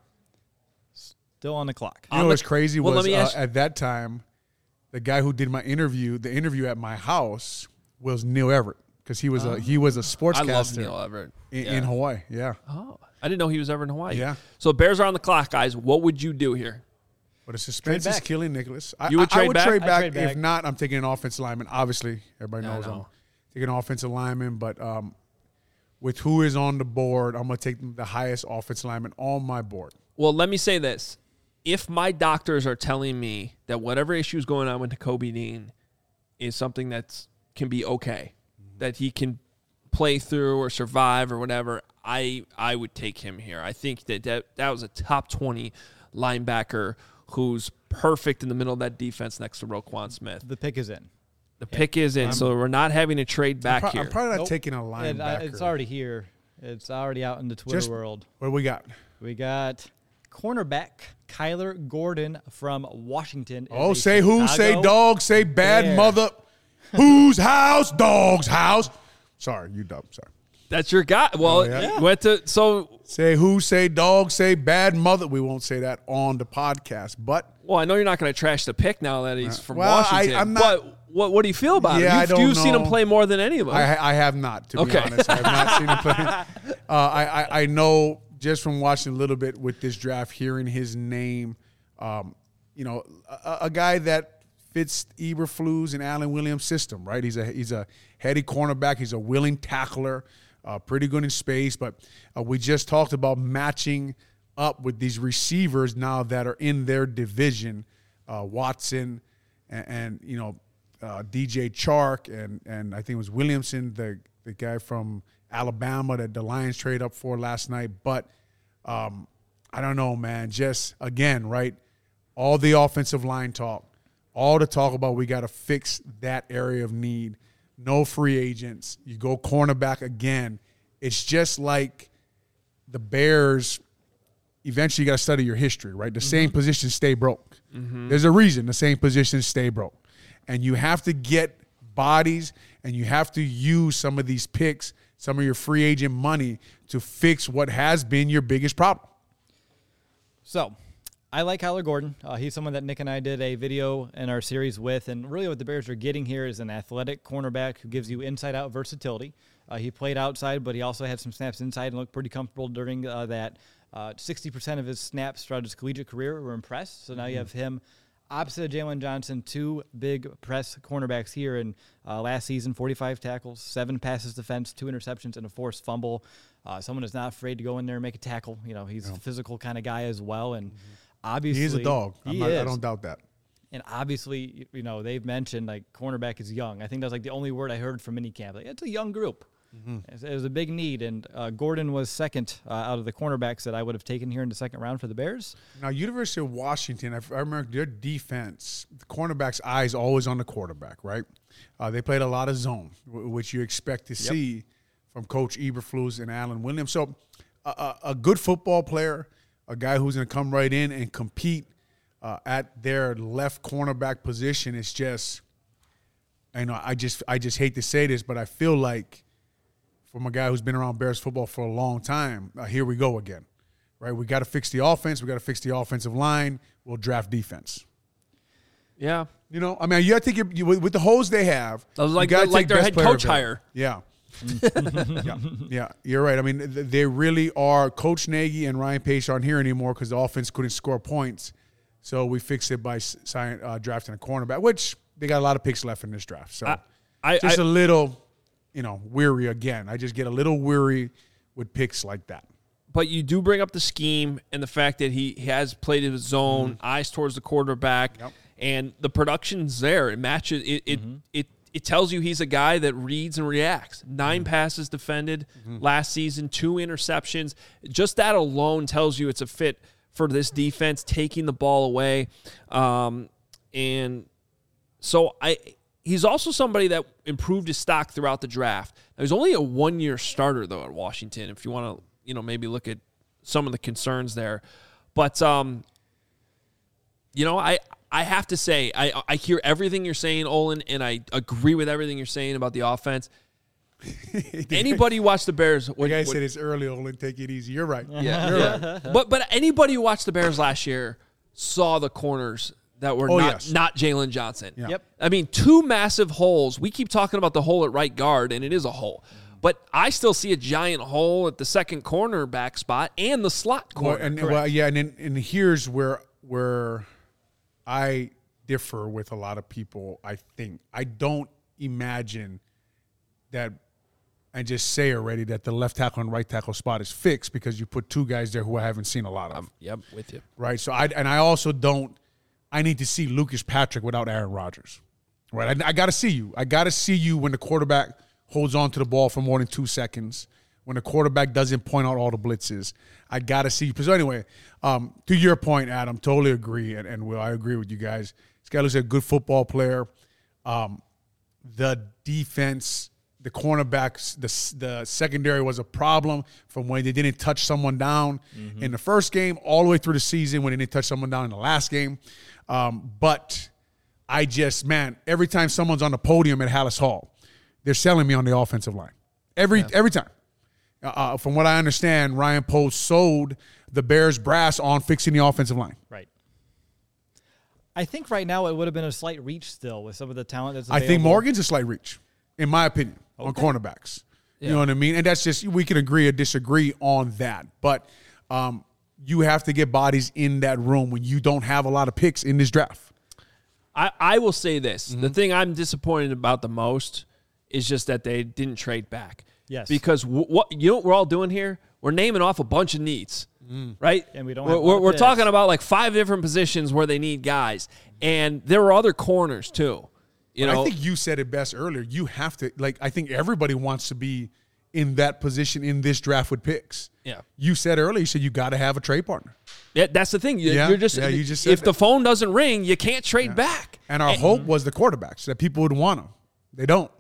Still on the clock. you know what's crazy well, let was me uh, ask- at that time, the guy who did my interview, the interview at my house was Neil Everett because he was a he was a I sportscaster love Neil Everett. in, Yeah. in Hawaii. Yeah, Oh, I didn't know he was ever in Hawaii. Yeah. So Bears are on the clock, guys. What would you do here? but the suspense Trade is back. killing Nicholas. I, You would I- I trade would back? trade I'd back. trade back. If not, I'm taking an offensive lineman. Obviously, everybody Yeah, I knows I'm know. taking an offensive lineman, but um, with who is on the board, I'm gonna take the highest offensive lineman on my board. Well, let me say this. If my doctors are telling me that whatever issue is going on with Kobe Dean is something that can be okay, that he can play through or survive or whatever, I I would take him here. I think that that, that was a top twenty linebacker who's perfect in the middle of that defense next to Roquan Smith. The pick is in. The pick is in, so we're not having to trade back I'm, pro- here. I'm probably not Nope. taking a And, uh, linebacker. it's already here. It's already out in the Twitter Just- world. What do we got? We got cornerback Kyler Gordon from Washington. is Oh, a say who? Say Chicago dog. Say bad Bear. mother. Whose house? Dog's house. Sorry, you dumb. Sorry. That's your guy. Well, Oh, yeah. you went to so. Say who? Say dog. Say bad mother. We won't say that on the podcast, but Well, I know you're not going to trash the pick now that he's from well, I- Washington. I'm not- but what what do you feel about Yeah, it? I You've, don't you've seen him know. play more than any of us. I, I have not, to be Okay. honest. I have not seen him play. Uh, I, I, I know just from watching a little bit with this draft, hearing his name, um, you know, a, a guy that fits Eberflus and Allen Williams' system, right? He's a he's a heady cornerback. He's a willing tackler, uh, pretty good in space. But uh, we just talked about matching up with these receivers now that are in their division, uh, Watson and, and you know, Uh, D J Chark and and I think it was Williamson, the the guy from Alabama that the Lions trade up for last night. But um, I don't know, man. Just again, right? All the offensive line talk, all the talk about we got to fix that area of need. No free agents. You go cornerback again. It's just like the Bears, eventually you got to study your history, right? The mm-hmm. same positions stay broke. Mm-hmm. There's a reason the same positions stay broke. And you have to get bodies and you have to use some of these picks, some of your free agent money to fix what has been your biggest problem. So I like Kyler Gordon. Uh, he's someone that Nick and I did a video in our series with. And really what the Bears are getting here is an athletic cornerback who gives you inside-out versatility. Uh, he played outside, but he also had some snaps inside and looked pretty comfortable during uh, that. Uh, sixty percent of his snaps throughout his collegiate career were impressed. So now mm-hmm. you have him opposite of Jalen Johnson, two big press cornerbacks here. And uh, last season, forty-five tackles, seven passes defense, two interceptions, and a forced fumble. Uh, someone is not afraid to go in there and make a tackle. You know, he's yeah. a physical kind of guy as well. And mm-hmm. obviously, he is a dog. He I'm not, is. I don't doubt that. And obviously, you know, they've mentioned like cornerback is young. I think that's like the only word I heard from minicamp. Like, it's a young group. Mm-hmm. It was a big need, and uh, Gordon was second uh, out of the cornerbacks that I would have taken here in the second round for the Bears. Now, University of Washington, I, I remember their defense, the cornerback's eyes always on the quarterback, right? Uh, they played a lot of zone, w- which you expect to yep. see from Coach Eberflus and Alan Williams. So uh, a, a good football player, a guy who's going to come right in and compete uh, at their left cornerback position is just, I know I just I just hate to say this, but I feel like from a guy who's been around Bears football for a long time, uh, here we go again, right? We got to fix the offense. We got to fix the offensive line. We'll draft defense. Yeah. You know, I mean, you got to take your, you, with, with the holes they have. That was like, the, like their head coach hire. Yeah. yeah. Yeah. You're right. I mean, they really are. Coach Nagy and Ryan Pace aren't here anymore because the offense couldn't score points. So we fixed it by sign, uh, drafting a cornerback, which they got a lot of picks left in this draft. So I, I, just I, a little – you know, weary again. I just get a little weary with picks like that. But you do bring up the scheme and the fact that he, he has played his zone, mm-hmm. eyes towards the quarterback, yep. and the production's there. It matches. It it, mm-hmm. it it tells you he's a guy that reads and reacts. Nine mm-hmm. passes defended mm-hmm. last season, two interceptions. Just that alone tells you it's a fit for this defense, taking the ball away. Um, and so I... He's also somebody that improved his stock throughout the draft. Now, he's only a one-year starter, though, at Washington, if you want to, you know, maybe look at some of the concerns there. But, um, you know, I I have to say, I, I hear everything you're saying, Olin, and I agree with everything you're saying about the offense. Anybody watch the Bears? Would, the guy would, said it's early, Olin. Take it easy. You're right. Yeah, You're yeah. right. But, but anybody who watched the Bears last year saw the corners that were oh, not, yes. not Jalen Johnson. Yeah. Yep. I mean, two massive holes. We keep talking about the hole at right guard, and it is a hole. But I still see a giant hole at the second cornerback spot and the slot corner. Well, and, well, yeah, and then, and here's where where I differ with a lot of people, I think. I don't imagine that, and just say already that the left tackle and right tackle spot is fixed because you put two guys there who I haven't seen a lot of. Um, yep, with you. Right, so I and I also don't, I need to see Lucas Patrick without Aaron Rodgers. Right, I, I got to see you. I got to see you when the quarterback holds on to the ball for more than two seconds, when the quarterback doesn't point out all the blitzes. I got to see you. So anyway, um, to your point, Adam, totally agree, and, and Will, I agree with you guys. This guy looks like a good football player. Um, the defense, the cornerbacks, the, the secondary was a problem from when they didn't touch someone down mm-hmm. in the first game all the way through the season when they didn't touch someone down in the last game. Um, but I just, man, every time someone's on the podium at Hallis Hall, they're selling me on the offensive line. Every yeah. every time. Uh, from what I understand, Ryan Post sold the Bears brass on fixing the offensive line. Right. I think right now it would have been a slight reach still with some of the talent that's available. I think Morgan's a slight reach, in my opinion, okay. on cornerbacks. Yeah. You know what I mean? And that's just, we can agree or disagree on that. But um, you have to get bodies in that room when you don't have a lot of picks in this draft. I, I will say this. Mm-hmm. The thing I'm disappointed about the most is just that they didn't trade back. Yes. Because w- what you know what we're all doing here? We're naming off a bunch of needs, mm. right? And we don't. We're, have we're, we're picks. talking about like five different positions where they need guys, and there are other corners too. You but know, I think you said it best earlier. You have to, like, I think everybody wants to be in that position in this draft with picks. Yeah. You said earlier, you said you got to have a trade partner. Yeah, that's the thing. You, yeah, you're just, yeah, you just said if that. the phone doesn't ring, you can't trade yeah. back. And our and, hope was the quarterbacks, that people would want them. They don't.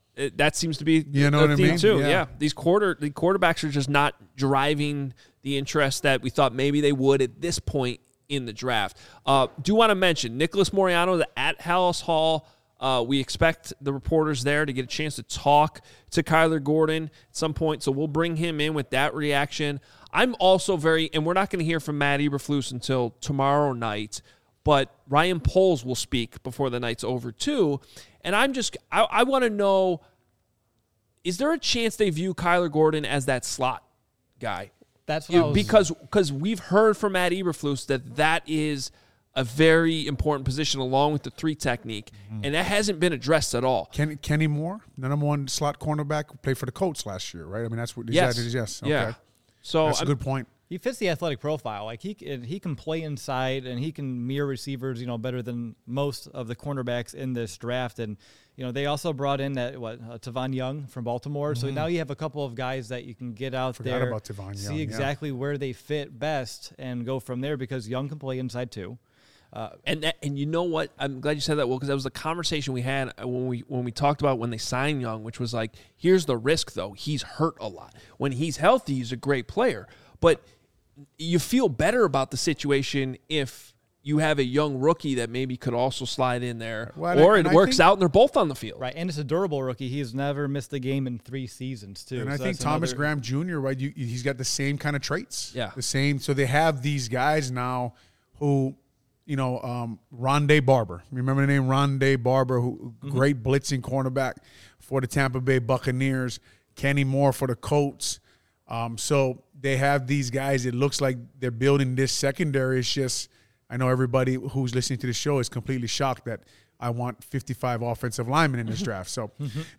it, that seems to be you know the what theme I mean? too. Yeah. yeah, these quarter the quarterbacks are just not driving the interest that we thought maybe they would at this point in the draft. Uh, do want to mention Nicholas Moreano the, at Hallis Hall. Uh, we expect the reporters there to get a chance to talk to Kyler Gordon at some point, so we'll bring him in with that reaction. I'm also very, and we're not going to hear from Matt Eberflus until tomorrow night, but Ryan Poles will speak before the night's over too. And I'm just, I, I want to know, is there a chance they view Kyler Gordon as that slot guy? That's what You, I was, because because we've heard from Matt Eberflus that that is a very important position along with the three technique, mm-hmm. and that hasn't been addressed at all. Kenny, Kenny Moore, the number one slot cornerback, played for the Colts last year, right? I mean, that's what Yes. that is. Yes. Okay. Yeah. So that's a I'm, good point. he fits the athletic profile. Like he can, he can play inside and he can mirror receivers, you know, better than most of the cornerbacks in this draft. And you know, they also brought in that what uh, Tavon Young from Baltimore. Mm-hmm. So now you have a couple of guys that you can get out Forgot there, about Tavon see Young, exactly yeah. where they fit best, and go from there. Because Young can play inside too. Uh, and that, and you know what? I'm glad you said that, Will, because that was the conversation we had when we when we talked about when they signed Young, which was like, here's the risk, though. He's hurt a lot. When he's healthy, he's a great player. But you feel better about the situation if you have a young rookie that maybe could also slide in there, well, or and it I works think, out and they're both on the field. Right, and it's a durable rookie. He's never missed a game in three seasons, too. And so I think that's Thomas another... Graham Junior, right, you, he's got the same kind of traits. Yeah. The same. So they have these guys now who, you know, um, Rondé Barber. Remember the name Rondé Barber, who Mm-hmm. great blitzing cornerback for the Tampa Bay Buccaneers. Kenny Moore for the Colts. Um, so they have these guys. It looks like they're building this secondary. It's just, I know everybody who's listening to the show is completely shocked that I want fifty-five offensive linemen in this draft. So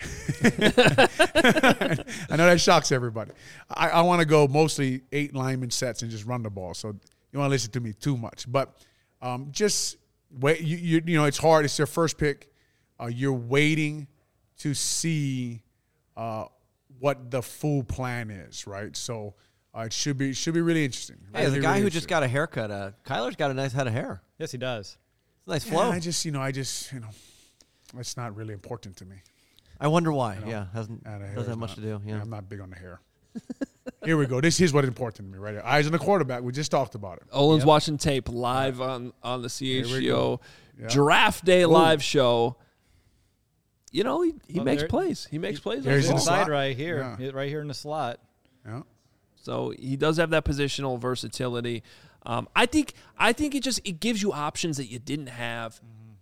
I know that shocks everybody. I, I want to go mostly eight lineman sets and just run the ball. So you want to listen to me too much. But um, just wait. You, you, you know, it's hard. It's their first pick. Uh, you're waiting to see uh, what the full plan is, right? So uh, it should be should be really interesting. Hey, really, the guy really who just got a haircut, uh, Kyler's got a nice head of hair. Yes, he does. It's a nice Yeah, flow. I just, you know, I just, you know, it's not really important to me. I wonder why. You know, yeah, hasn't Uh, the hair doesn't is have much not- to do. Yeah. I'm not big on the hair. Here we go. This is what's important to me right here. Eyes on the quarterback. We just talked about it. Olin's Yep. watching tape live on, on the C H Here we G O go. Yeah. Draft Day live show. You know, he, he Oh, makes there- plays. He makes plays. on There's the in ball. the slot. Inside right here, Yeah. right here in the slot. Yeah. So he does have that positional versatility. Um, I think I think it just it gives you options that you didn't have. Mm-hmm.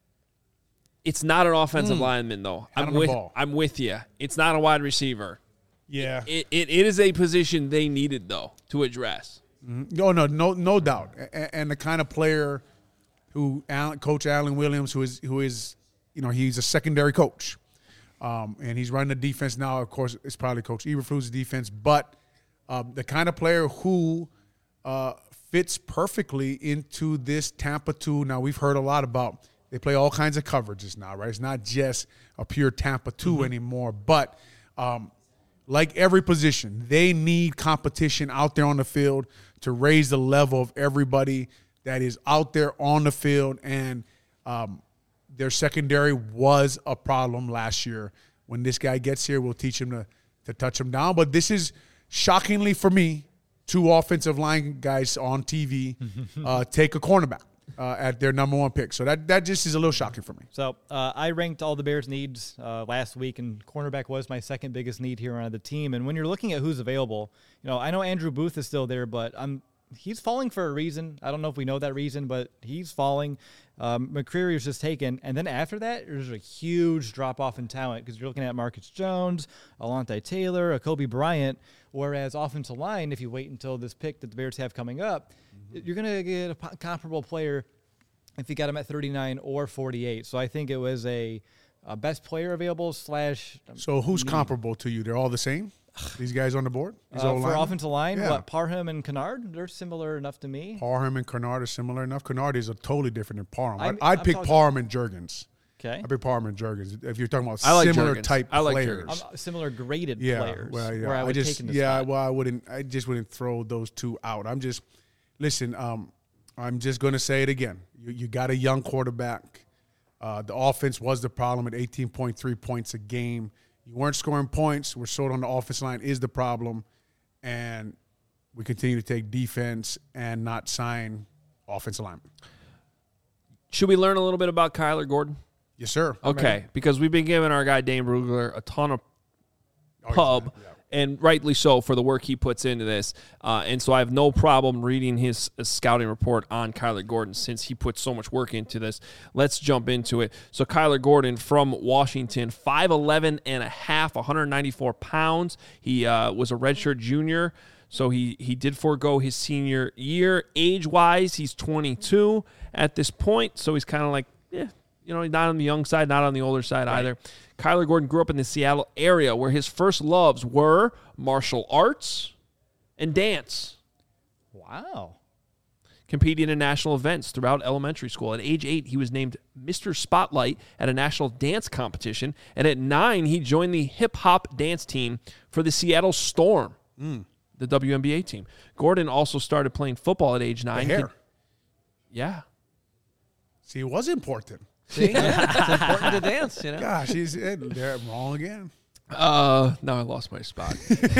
It's not an offensive lineman though. Hand I'm him the with ball. I'm with you. It's not a wide receiver. Yeah. It, it it is a position they needed though to address. No, no, no, no doubt. And, and the kind of player who Alan, Coach Alan Williams, who is who is, you know, he's a secondary coach, um, and he's running the defense now. Of course, it's probably Coach Eberflus' defense, but um, the kind of player who uh, fits perfectly into this Tampa two. Now we've heard a lot about they play all kinds of coverages now, right? It's not just a pure Tampa two mm-hmm. anymore, but. Um, Like every position, they need competition out there on the field to raise the level of everybody that is out there on the field. And um, their secondary was a problem last year. When this guy gets here, we'll teach him to, to touch him down. But this is, shockingly for me, two offensive line guys on T V uh, take a cornerback uh, at their number one pick. So that, that just is a little shocking for me. So uh, I ranked all the Bears' needs uh, last week, and cornerback was my second biggest need here on the team. And when you're looking at who's available, you know, I know Andrew Booth is still there, but I'm he's falling for a reason. I don't know if we know that reason, but he's falling. Um, McCreary was just taken. And then after that, there's a huge drop-off in talent because you're looking at Marcus Jones, Alontae Taylor, Kobe Bryant, whereas offensive line, if you wait until this pick that the Bears have coming up, mm-hmm. you're going to get a p- comparable player if you got him at thirty-nine or forty-eight. So I think it was a, a best player available slash. So who's need. comparable to you? They're all the same? These guys on the board? These Uh, old for linemen? offensive line, Yeah. what, Parham and Kennard, they're similar enough to me. Parham and Kennard are similar enough. Kennard is a totally different than Parham. I'm- I'd, I'd I'm pick talking- Parham and Jurgens. Okay. I'd pick Parham and Jurgens. If you're talking about I like similar Jurgens. type I like players. Jurgens. Um, similar graded yeah, players well, yeah. where I would just, take in the Yeah, spot. well, I wouldn't. I just wouldn't throw those two out. I'm just listen. Um, I'm just going to say it again. You, you got a young quarterback. Uh, the offense was the problem at eighteen point three points a game. You weren't scoring points. We're short on the offensive line is the problem. And we continue to take defense and not sign offensive linemen. Should we learn a little bit about Kyler Gordon? Yes, sir. Okay, because we've been giving our guy Dane Brugler a ton of Oh, pub, yeah. and rightly so for the work he puts into this. Uh, and so I have no problem reading his uh, scouting report on Kyler Gordon since he puts so much work into this. Let's jump into it. So Kyler Gordon from Washington, five eleven and a half, one hundred ninety-four pounds. He uh, was a redshirt junior, so he, he did forego his senior year. Age-wise, he's twenty-two at this point, so he's kind of like, yeah, you know, not on the young side, not on the older side right. either. Kyler Gordon grew up in the Seattle area where his first loves were martial arts and dance. Wow. Competing in national events throughout elementary school. At age eight, he was named Mister Spotlight at a national dance competition. And at nine, he joined the hip-hop dance team for the Seattle Storm, mm. the W N B A team. Gordon also started playing football at age nine. The hair. Yeah. See, it was important. See, yeah, it's important to dance, you know. Gosh, he's they're wrong again. Uh, now I lost my spot.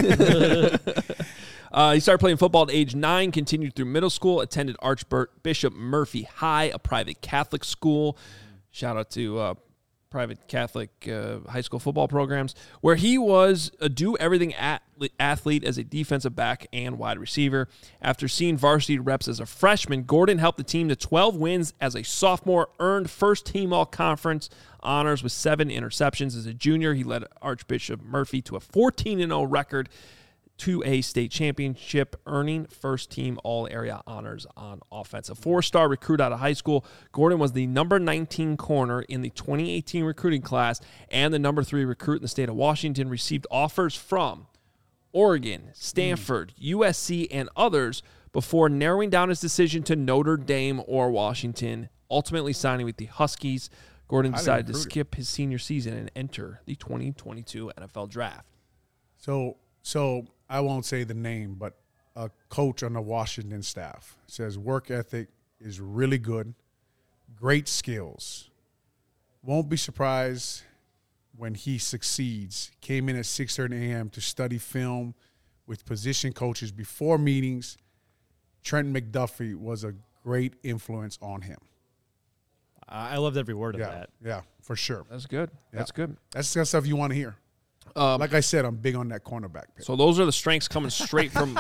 uh, he started playing football at age nine, continued through middle school, attended Archbishop Murphy High, a private Catholic school. Shout out to uh, private Catholic uh, high school football programs, where he was a do-everything athlete as a defensive back and wide receiver. After seeing varsity reps as a freshman, Gordon helped the team to twelve wins as a sophomore, earned first-team all-conference honors with seven interceptions. As a junior, he led Archbishop Murphy to a fourteen and oh record, to a state championship, earning first-team all-area honors on offense. A four-star recruit out of high school, Gordon was the number nineteen corner in the twenty eighteen recruiting class and the number three recruit in the state of Washington, received offers from Oregon, Stanford, mm. U S C, and others before narrowing down his decision to Notre Dame or Washington, ultimately signing with the Huskies. Gordon decided to skip his senior season and enter the twenty twenty-two N F L Draft. So, so I won't say the name, but a coach on the Washington staff says work ethic is really good, great skills. Won't be surprised when he succeeds. Came in at six thirty a.m. to study film with position coaches before meetings. Trent McDuffie was a great influence on him. I loved every word yeah, of that. Yeah, for sure. That's good. Yeah. That's good. That's the kind of stuff you want to hear. Um, like I said, I'm big on that cornerback pick. So those are the strengths coming straight from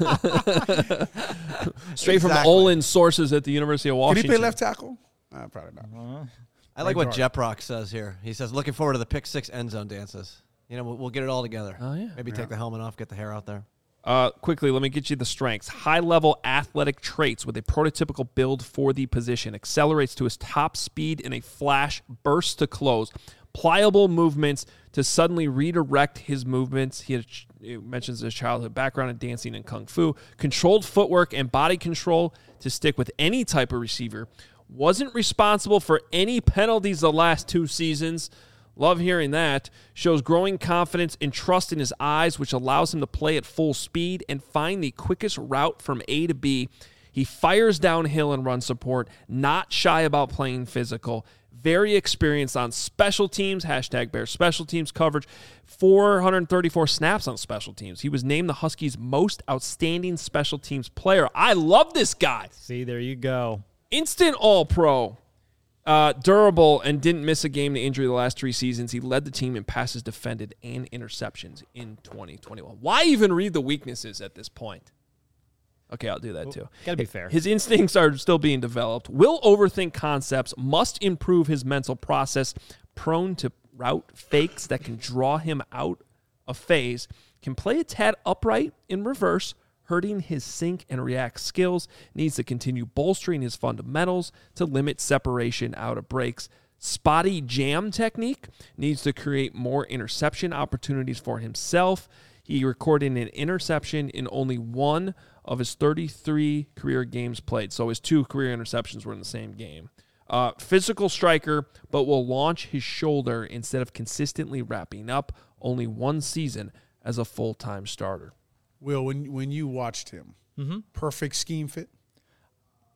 straight exactly. from Olin's sources at the University of Washington. Can he play left tackle? Uh, probably not. Uh, I like right what Jeprock says here. He says, looking forward to the pick six end zone dances. You know, we'll, we'll get it all together. Oh, yeah. Maybe yeah. take the helmet off, get the hair out there. Uh, quickly, let me get you the strengths. High-level athletic traits with a prototypical build for the position. Accelerates to his top speed in a flash, burst to close. Pliable movements to suddenly redirect his movements. He, had, he mentions his childhood background in dancing and kung fu. Controlled footwork and body control to stick with any type of receiver. Wasn't responsible for any penalties the last two seasons. Love hearing that. Shows growing confidence and trust in his eyes, which allows him to play at full speed and find the quickest route from A to B. He fires downhill and run support, not shy about playing physical. Very experienced on special teams, hashtag Bears special teams coverage. four hundred thirty-four snaps on special teams. He was named the Huskies' most outstanding special teams player. I love this guy. See, there you go. Instant all-pro. Uh, durable and didn't miss a game to injury the last three seasons. He led the team in passes defended and interceptions in twenty twenty-one. Why even read the weaknesses at this point? Okay, I'll do that too. Gotta be fair. His instincts are still being developed. Will overthink concepts. Must improve his mental process. Prone to route fakes that can draw him out of phase. Can play a tad upright in reverse, hurting his sync and react skills. Needs to continue bolstering his fundamentals to limit separation out of breaks. Spotty jam technique. Needs to create more interception opportunities for himself. He recorded an interception in only one of his thirty-three career games played. So his two career interceptions were in the same game. Uh, physical striker, but will launch his shoulder instead of consistently wrapping up. Only one season as a full-time starter. Will, when when you watched him, mm-hmm. perfect scheme fit?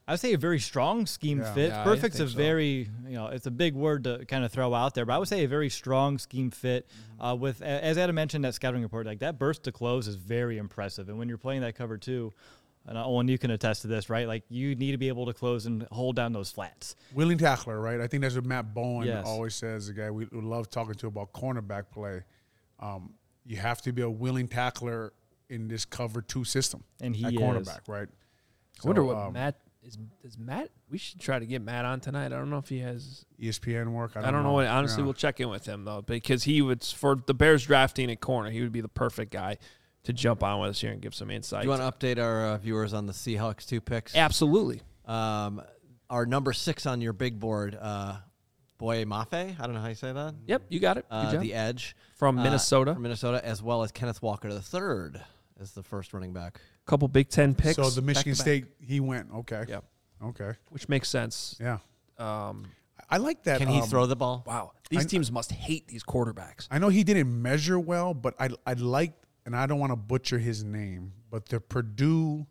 I would say a very strong scheme Yeah. fit. Yeah, I Perfect's a think so. very, you know, it's a big word to kind of throw out there, but I would say a very strong scheme fit. Mm-hmm. Uh, with, as Adam mentioned, that scouting report, like that burst to close is very impressive. And when you're playing that cover two, and Owen, you can attest to this, right? Like you need to be able to close and hold down those flats. Willing tackler, right? I think that's what Matt Bowen Yes. always says, the guy we love talking to about cornerback play. Um, you have to be a willing tackler in this cover two system. And he at is. cornerback, right? I wonder So, what um, Matt is. Is Matt? We should try to get Matt on tonight. I don't know if he has. E S P N work. I I don't, don't, know. what Honestly, Yeah. we'll check in with him though, because he would for the Bears drafting at corner. He would be the perfect guy to jump on with us here and give some insight. Do you want to update our uh, viewers on the Seahawks two picks? Absolutely. Um, our number six on your big board, uh, Boye Mafe. I don't know how you say that. Yep, you got it. Good Uh, job. the edge From uh, Minnesota. from Minnesota, as well as Kenneth Walker the third as the first running back. Couple Big Ten picks. So the Michigan back-to-back, State, he went. Okay. Yep. Okay. which makes sense. Yeah. Um, I like that. Can he um, throw the ball? wow, these I- teams must hate these quarterbacks. I know he didn't measure well, but I I like, and I don't want to butcher his name, but the Purdue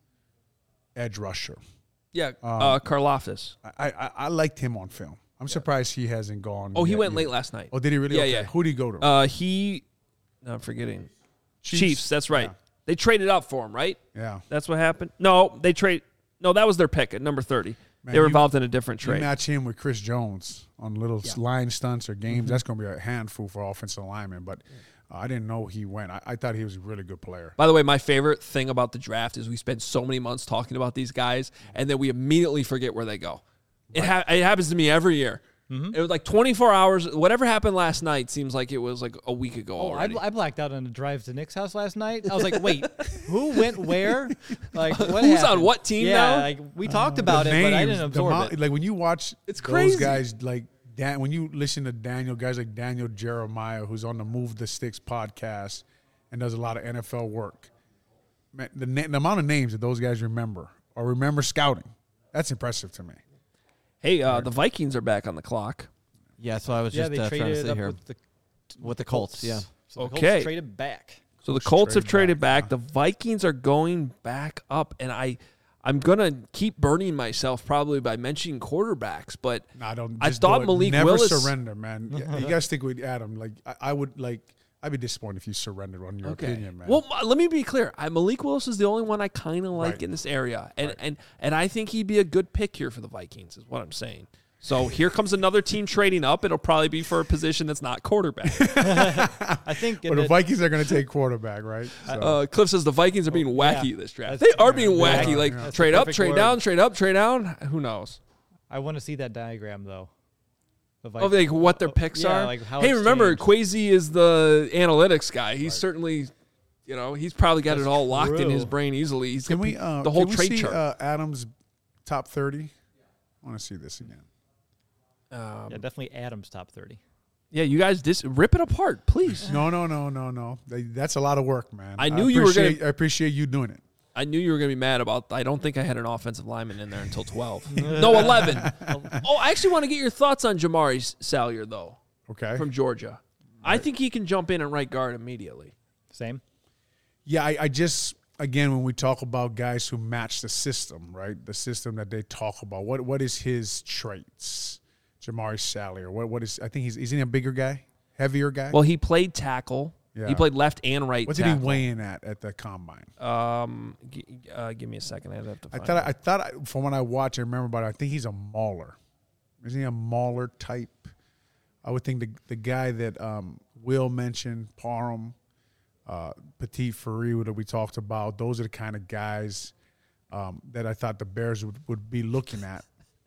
edge rusher. Yeah, Um, uh, Karlaftis. I, I I liked him on film. I'm surprised he hasn't gone. Oh, he yet went either. late last night. Oh, did he really? Yeah, Okay. yeah. Who did he go to? Uh, he, no, I'm forgetting. Chiefs. That's right. Yeah. They traded up for him, right? Yeah. That's what happened. No, they trade. No, that was their pick at number thirty. Man, they were you- involved in a different You trade. match him with Chris Jones on little Yeah. line stunts or games. Mm-hmm. That's going to be a handful for offensive linemen. But uh, I didn't know he went. I, I thought he was a really good player. By the way, my favorite thing about the draft is we spend so many months talking about these guys, and then we immediately forget where they go. It, ha- it happens to me every year. Mm-hmm. It was like twenty-four hours. Whatever happened last night seems like it was like a week ago Oh, I, already. bl- I blacked out on the drive to Nick's house last night. I was like, wait, who went where? Like, what Who's happened? on what team yeah, now? like we talked about The it, but I names, didn't the absorb mo- it. Like when you watch It's those crazy. guys, like Dan, when you listen to Daniel, guys like Daniel Jeremiah, who's on the Move the Sticks podcast and does a lot of N F L work, man, the, na- the amount of names that those guys remember or remember scouting, that's impressive to me. hey, uh, the Vikings are back on the clock. Yeah, so I was yeah, just they uh, trying to traded see up here with the with the Colts. Yeah, So the Okay. Colts traded back. So the Colts Colts have traded traded back, back. The Vikings are going back up, and I, I'm gonna keep burning myself probably by mentioning quarterbacks, but No, I don't. I just thought do it. Malik Never Willis- surrender, man. You, you got to stick with Adam. Like I, I would like. I'd be disappointed if you surrendered on your okay. opinion, man. Well, m- let me be clear. I, Malik Willis is the only one I kind of like Right. in this area, and Right. and and I think he'd be a good pick here for the Vikings. Is what I'm saying. So here comes another team trading up. It'll probably be for a position that's not quarterback. I think. in but the the- Vikings are going to take quarterback, right? So, Uh, Cliff says the Vikings are being wacky yeah. this draft. That's- They are being yeah, wacky. yeah, like yeah. That's trade the up, perfect trade word. down, trade up, trade down. Who knows? I want to see that diagram though. The Of Vikings. like what their Oh, picks yeah, are. like how hey, it's remember changed. Quasi is the analytics guy. He's certainly, you know, he's probably got That's it all locked in true. his brain easily. He's can got we uh, the whole can we trade see, chart. Uh, Adam's top thirty? I want to see this again. um, Yeah, definitely Adams top thirty. yeah, you guys dis- rip it apart, please. No, no, no, no, no. They- That's a lot of work, man. I knew you were gonna- appreciate- I appreciate you doing it. I knew you were going to be mad about. I don't think I had an offensive lineman in there until twelve. No, eleven. Oh, I actually want to get your thoughts on Jamari Salyer though Okay. from Georgia. I think he can jump in and right guard immediately. Same. Yeah, I, I just again when we talk about guys who match the system, right? The system that they talk about. What what is his traits? Jamari Salyer. What what is? I think he's is he a bigger guy, heavier guy. Well, he played tackle. Yeah. He played left and right. what did tackle. he weigh in at at the combine? Um, g- uh, give me a second. I'd have to. I Find thought it. I thought I, from what I watched, I remember, but I think he's a mauler. Isn't he a mauler type? I would think the the guy that um, Will mentioned, Parham, uh, Petit Ferry that we talked about. Those are the kind of guys um, that I thought the Bears would, would be looking at.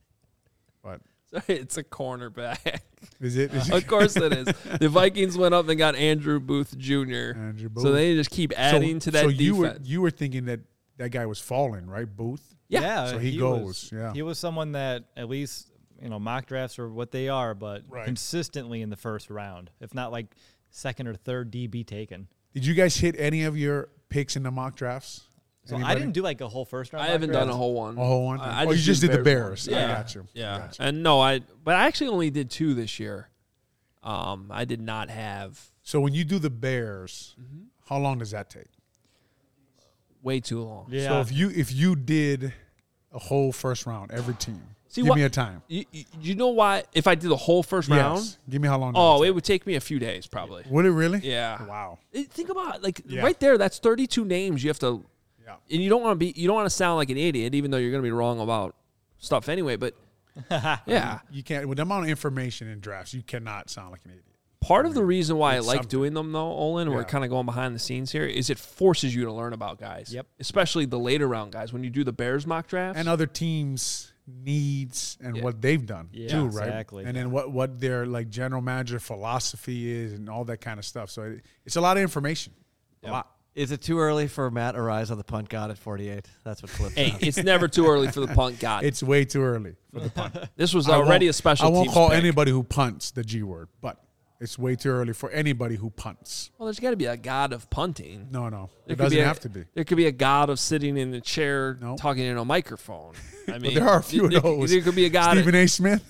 But It's a cornerback. is it? Is it Of course it is. The Vikings went up and got Andrew Booth Junior Andrew Booth. So they just keep adding so, to that so defense. you were you were thinking that that guy was falling, right? Booth. Yeah. So he was- goes, yeah. He was someone that at least, you know, mock drafts are what they are, but Right. consistently in the first round, if not like second or third D B taken. Did you guys hit any of your picks in the mock drafts? So I Anybody? didn't do like a whole first round. I mock haven't draft. done a whole one. A whole one? I, I Oh, you just did the Bears. ones. I Yeah. got you. I Yeah. got you. And no, I but I actually only did two this year. Um, I did not have So when you do the Bears, Mm-hmm. how long does that take? way too long. Yeah. So if you if you did a whole first round, every team. See, Give what, me a time. You, you know why? If I did the whole first yes. round, Give me how long. oh, it would take me a few days probably. Would it really? Yeah. Wow. Think about like Yeah. right there. That's thirty-two names you have to, Yeah. and you don't want to be. You don't want to sound like an idiot, even though you're going to be wrong about stuff anyway. But yeah, You can't with the amount of information in drafts. You cannot sound like an idiot. part of the reason why I it's like something. doing them though, Olin, we're Yeah. kind of going behind the scenes here, is it forces you to learn about guys. Yep. Especially the later round guys when you do the Bears mock drafts. And other teams' needs and Yeah. what they've done Yeah, too, right? exactly. And then what what their like general manager philosophy is and all that kind of stuff. So it, it's a lot of information. A Yep. lot. Is it too early for Matt Ariza, the punt god at forty-eight? That's what Cliff Hey, said. it's never too early for the punt god. It's way too early for the punt. This was I already won't- a special I won't teams call pick. anybody who punts the G word, but it's way too early for anybody who punts. Well, there's got to be a god of punting. No, no. There It could doesn't be a- have to be. There could be a god of sitting in a chair No. talking in a microphone. I mean, there are a few there, of those. There could be a god. Stephen A. Smith.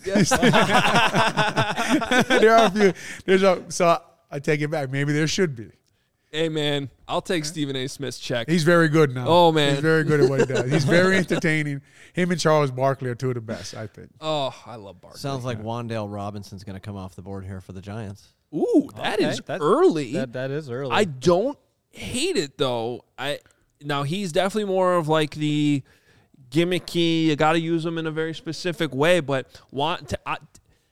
there are a few. There's a, so I take it back. Maybe there should be. Hey, man, I'll take Stephen A. Smith's check. He's very good now. Oh, man. He's very good at what he does. He's very entertaining. Him and Charles Barkley are two of the best, I think. oh, I love Barkley. Sounds like Wandale Robinson's going to come off the board here for the Giants. Ooh, that Okay, is that- early. That that is early. I don't hate it though. I now he's definitely more of like the gimmicky. You got to use him in a very specific way. But want to, uh,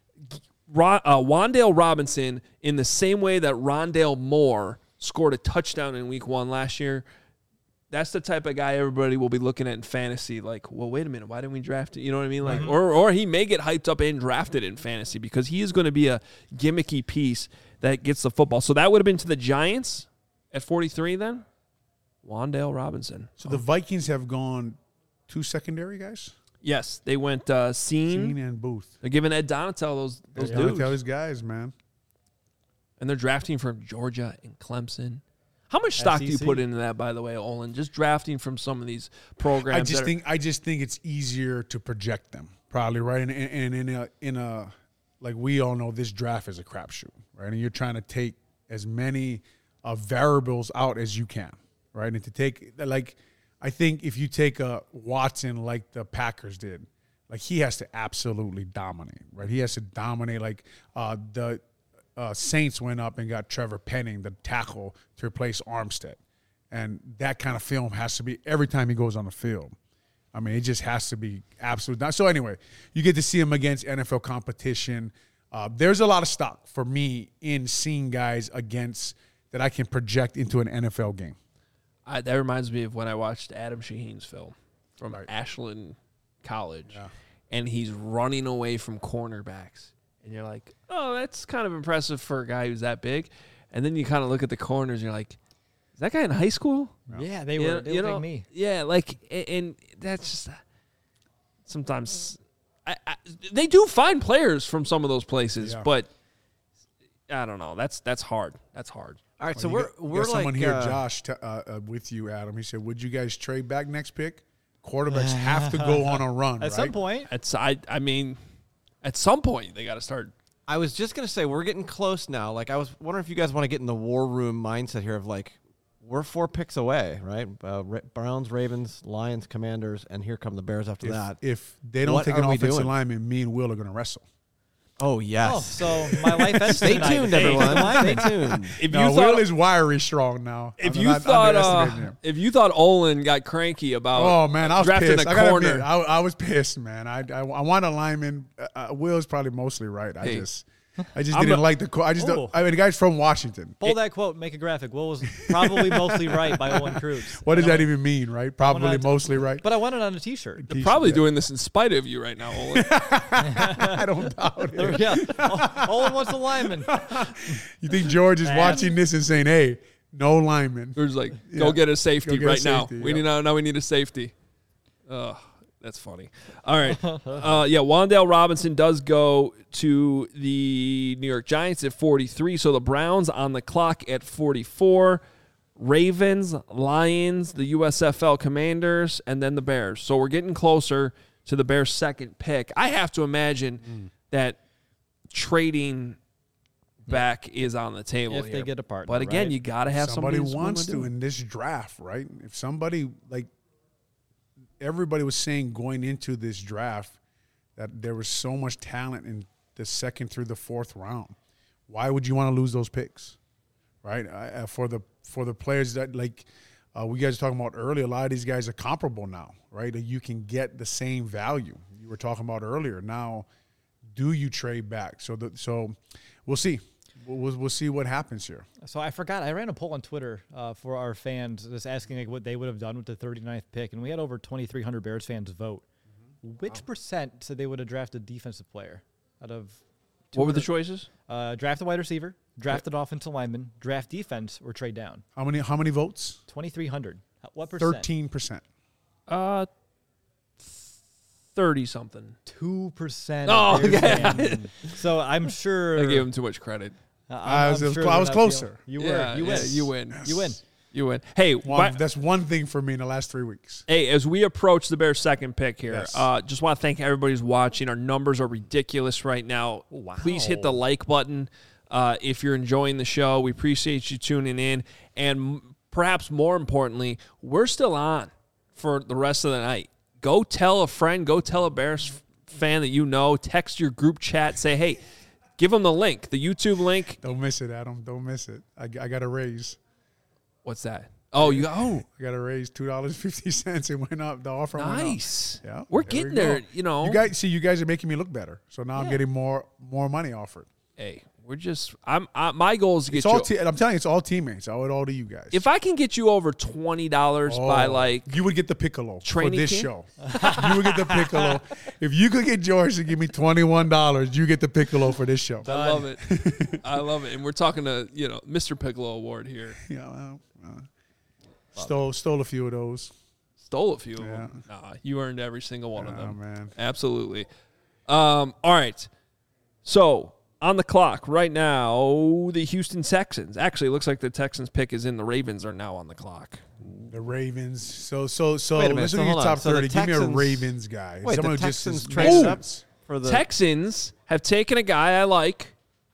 Ron, uh, Wandale Robinson in the same way that Rondale Moore scored a touchdown in Week One last year. That's the type of guy everybody will be looking at in fantasy. Like, well, wait a minute, why didn't we draft it? You know what I mean? Like, or or he may get hyped up and drafted in fantasy because he is going to be a gimmicky piece that gets the football. So that would have been to the Giants at forty-three then. Wandale Robinson. So the Vikings have gone two secondary guys? Yes, they went uh, Scene. Sheen and Booth. They're giving Ed Donatel those those Those yeah. dudes, Tell these guys, man. and they're drafting from Georgia and Clemson. How much stock do you S E C. put into that, by the way, Olin? Just drafting from some of these programs. I just that are- think I just think it's easier to project them, probably, right? And, and, and in a in a like we all know, this draft is a crapshoot, right? And you're trying to take as many uh, variables out as you can, right? And to take like, I think if you take a Watson like the Packers did, like he has to absolutely dominate, right? He has to dominate. Like uh, the uh, Saints went up and got Trevor Penning, the tackle, to replace Armstead. And that kind of film has to be every time he goes on the field. I mean, it just has to be absolute. So anyway, you get to see him against N F L competition. Uh, there's a lot of stock for me in seeing guys against that I can project into an N F L game. I, that reminds me of when I watched Adam Shaheen's film from Right. Ashland College, Yeah. and he's running away from cornerbacks. And you're like, oh, that's kind of impressive for a guy who's that big. And then you kind of look at the corners, and you're like, is that guy in high school? yeah, they You were. know- They you look know, like me. Yeah, like, and, and that's just sometimes I, I, they do find players from some of those places, Yeah. but I don't know. That's that's hard. That's hard. All right, Well, so you we're got, you we're got like someone here, uh, Josh, t- uh, uh, with you, Adam. He said, "Would you guys trade back next pick? Quarterbacks have to go on a run, At right? some point, It's I I mean, at some point they got to start. I was just gonna say we're getting close now. Like I was wondering if you guys want to get in the war room mindset here of like we're four picks away, right? Uh, Ra- Browns, Ravens, Lions, Commanders, and here come the Bears after If, that. if they don't What take an are we offensive doing? lineman, me and Will are going to wrestle. Oh yes. oh, so my life ends Stay tonight. tuned, Hey, everyone. come Stay on. tuned. If No, you thought Will is wiry strong now. if I'm you not thought uh, underestimating him. if you thought Olin got cranky about Oh man, I was drafting pissed. a I gotta corner, admit, I, I was pissed, man. I I, I want a lineman. Uh, uh, Will's probably mostly right. I Hey. just I just I'm didn't a- like the. co- I just Ooh. don't, I mean the guy's from Washington. Pull that quote, make a graphic. Will was probably mostly right by Owen Cruz. What does I know that it- even mean, right? Probably not- mostly right. But I want it on a T-shirt. T-shirt, probably yeah. doing this in spite of you right now, Olin. I don't doubt it. yeah, O- Owen wants a lineman. You think George is Man. watching this and saying, "Hey, no lineman"? There's like, go Yeah. get a safety Go get a right now. safety, We yeah. need now. Now we need a safety. Oh, that's funny. All right. Uh, yeah, Wandale Robinson does go to the New York Giants at forty-three. So the Browns on the clock at forty-four. Ravens, Lions, the U S F L Commanders, and then the Bears. So we're getting closer to the Bears' second pick. I have to imagine Mm. that trading back is on the table If here. they get a partner, But again, right? you got to have somebody somebody, who's willing wants do to it. in this draft, right? If somebody like everybody was saying going into this draft that there was so much talent in the second through the fourth round. Why would you want to lose those picks, right? Uh, for the for the players that, like uh, we guys were talking about earlier, a lot of these guys are comparable now, right? You can get the same value you were talking about earlier. Now, do you trade back? So the, so we'll see. We'll, we'll, we'll see what happens here. So I forgot. I ran a poll on Twitter uh, for our fans just asking like what they would have done with the thirty-ninth pick, and we had over twenty-three hundred Bears fans vote. Mm-hmm. Which wow. percent said they would have drafted a defensive player out of what were the choices? Uh, draft a wide receiver, drafted yep. offensive lineman, draft defense, or trade down. How many How many votes? twenty-three hundred. What percent? thirteen percent. Uh, thirty-something. two percent. Oh, yeah. So I'm sure. I gave him too much credit. Uh, I was, sure I was closer. You were. Yeah, you win. Yeah, you win. Yes. You win. You win. Hey, one, that's one thing for me in the last three weeks. Hey, as we approach the Bears' second pick here, yes. uh, just want to thank everybody who's watching. Our numbers are ridiculous right now. Wow. Please hit the like button uh, if you're enjoying the show. We appreciate you tuning in. And m- perhaps more importantly, we're still on for the rest of the night. Go tell a friend. Go tell a Bears f- fan that you know. Text your group chat. Say, hey, give them the link, the YouTube link. Don't miss it, Adam. Don't miss it. I, I got a raise. What's that? Oh, you oh, I got a raise two dollars and fifty cents. It went up. The offer went up. Nice. Yeah, we're there getting we there. go. You know, you guys see, you guys are making me look better. So now Yeah. I'm getting more more money offered. Hey, we're just. I'm. I, my goal is to get It's all. you. Te- I'm telling you, it's all teammates. I owe it all to you guys. If I can get you over twenty dollars oh, by like, you would get the piccolo for this camp? show. You would get the piccolo. If you could get George to give me twenty-one dollars, you get the piccolo for this show. I love it. I love it. And we're talking to you know Mister Piccolo Award here. Yeah. Well, uh, Stole stole a few of those. Stole a few of Yeah. them. Nah, you earned every single one Oh, of them. man. Absolutely. Um, all right. So on the clock right now, the Houston Texans. Actually, it looks like the Texans pick is in. The Ravens are now on the clock. The Ravens. So so so. Wait a minute, Let's so look at hold your on. top So the thirty. Give me a Texans- Ravens guy. Wait, Someone the who just Texans is- traded makes up sense. for the Texans have taken a guy I like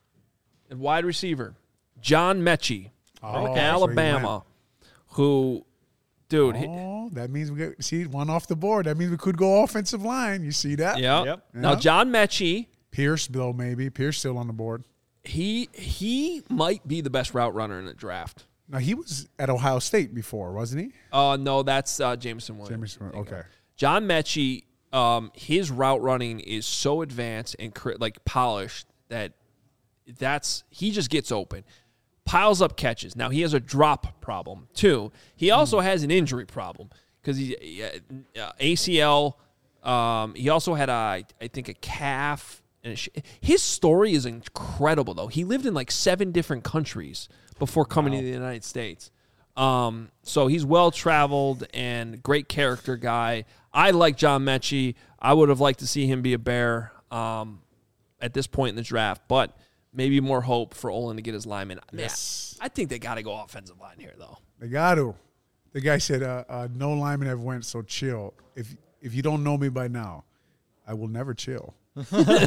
at wide receiver, John Mechie, Oh, from so he Alabama, who, dude, he- Oh, that means we got see one off the board. That means we could go offensive line. You see that? yeah. Yep. Now, Yeah. John Mechie, Pierce, though, maybe. Pierce still on the board. he he might be the best route runner in the draft. Now, he was at Ohio State before, wasn't he? Oh, uh, no, that's uh, Jameson Williams. Jameson, okay. John Mechie, um, his route running is so advanced and cr- like polished that that's he just gets open, piles up catches. Now he has a drop problem too. He also has an injury problem because he uh, A C L. Um, he also had a I think a calf. And a sh- his story is incredible though. He lived in like seven different countries before coming Wow. to the United States. Um, so he's well-traveled and great character guy. I like John Mechie. I would have liked to see him be a Bear um, at this point in the draft, but maybe more hope for Olin to get his lineman. Man, Yes. I think they got to go offensive line here, though. They got to. The guy said, uh, uh, no lineman ever went so chill. If if you don't know me by now, I will never chill. no,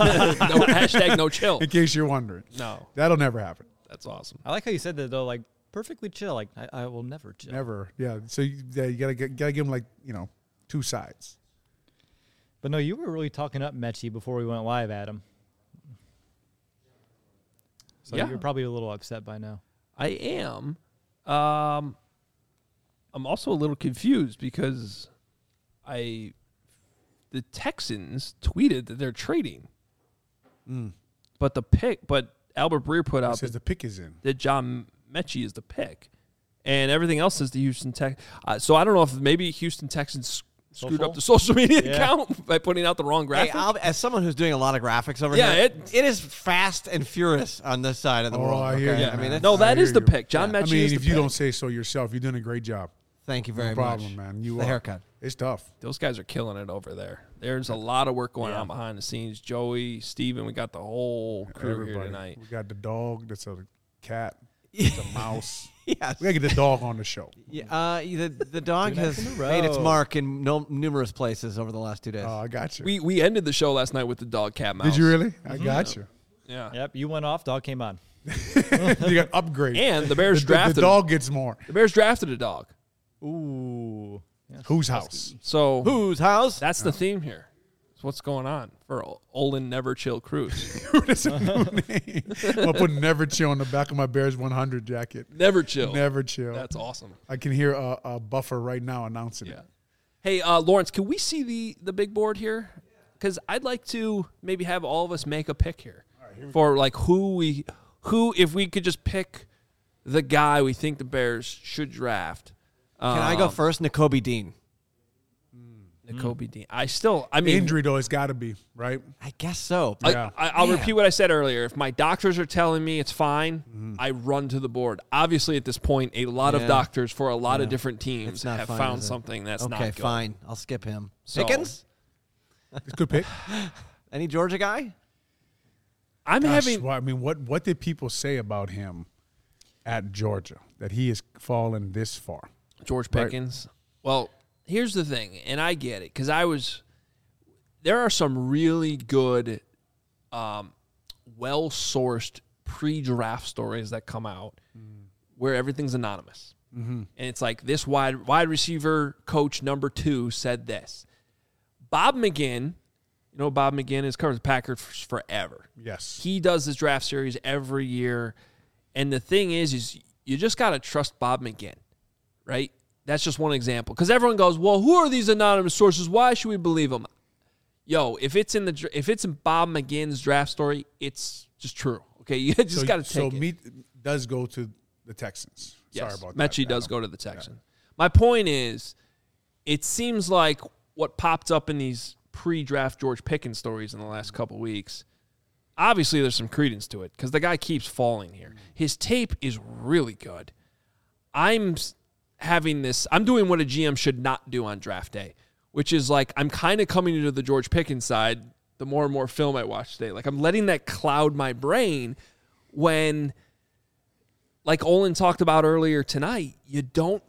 hashtag no chill. In case you're wondering. No, That'll never happen. that's awesome. I like how you said that though, like perfectly chill. Like I, I will never chill. Never. Yeah. So you, yeah, you gotta get, gotta give him like you know two sides. But no, you were really talking up Mechie before we went live, Adam. So Yeah. you're probably a little upset by now. I am. Um, I'm also a little confused because I, the Texans tweeted that they're trading, Mm. but the pick, but Albert Breer put It out says that, the pick is in. that John Mechie is the pick, and everything else is the Houston Tex. Uh, so I don't know if maybe Houston Texans screwed Social? up the social media Yeah. account by putting out the wrong Hey, graphic. I'll, as someone who's doing a lot of graphics over Yeah, here, it- it is fast and furious on this side of the Oh, world. I hear okay? you, I mean, man. it's- no, that I is hear the you. pick. John Yeah. Mechie I mean, is the if you pick. don't say so yourself, you're doing a great job. thank you very no problem, much. man. You the are. haircut. It's tough. Those guys are killing it over there. There's a lot of work going Yeah. on behind the scenes. Joey, Steven, we got the whole crew here Everybody. tonight. We got the dog. That's a cat. It's a mouse. Yes. We gotta get the dog on the show. Yeah, uh, the the dog Two nights has in a made its row. mark in no, numerous places over the last two days. Oh, I got you. We we ended the show last night with the dog cat mouse. Did you really? I got you. Yeah. Yep, you went off. Dog came on. You got upgrade. And the Bears the, the drafted dog gets more. the Bears drafted a dog. Ooh. Yes. Whose house? So Whose house? that's the theme here. It's what's going on for Olin Never Chill Cruise. That's a new name. I'm going to put Never Chill on the back of my Bears one hundred jacket. Never Chill. Never Chill. That's awesome. I can hear a, a buffer right now announcing Yeah. it. Hey, uh, Lawrence, can we see the, the big board here? Because I'd like to maybe have all of us make a pick here, right, here for like who we who if we could just pick the guy we think the Bears should draft. Can I go Um, first? N'Kobe Dean. N'Kobe Dean. I still, I mean, Injury, though, it's got to be, right? I guess so. I, Yeah. I, I'll Man. repeat what I said earlier. If my doctors are telling me it's fine, Mm-hmm. I run to the board. Obviously, at this point, a lot Yeah. of doctors for a lot of different teams It's not have fine, found is it? something that's okay, not good. fine. I'll skip him. So- Pickens? It's a good pick. Any Georgia guy? I'm Gosh, having well, I mean, what, what did people say about him at Georgia, that he has fallen this far? George Right. Pickens. Well, here's the thing, and I get it because I was. There are some really good, um, well-sourced pre-draft stories that come out where everything's anonymous, Mm-hmm. and it's like this wide wide receiver coach number two said this. Bob McGinn, you know Bob McGinn has covered the Packers forever. Yes. He does this draft series every year, and the thing is, is you just got to trust Bob McGinn, right? That's just one example. Because everyone goes, well, who are these anonymous sources? Why should we believe them? Yo, if it's in the if it's in Bob McGinn's draft story, it's just true. Okay, you just so, got to take so it. Meat does go to the Texans. Yes, Sorry about Mechie that. does Adam. go to the Texans. My point is, it seems like what popped up in these pre-draft George Pickens stories in the last couple weeks, obviously there's some credence to it because the guy keeps falling here. His tape is really good. I'm s- having this, I'm doing what a G M should not do on draft day, which is like I'm kind of coming to the George Pickens side the more and more film I watch today. Like I'm letting that cloud my brain when, like Olin talked about earlier tonight, you don't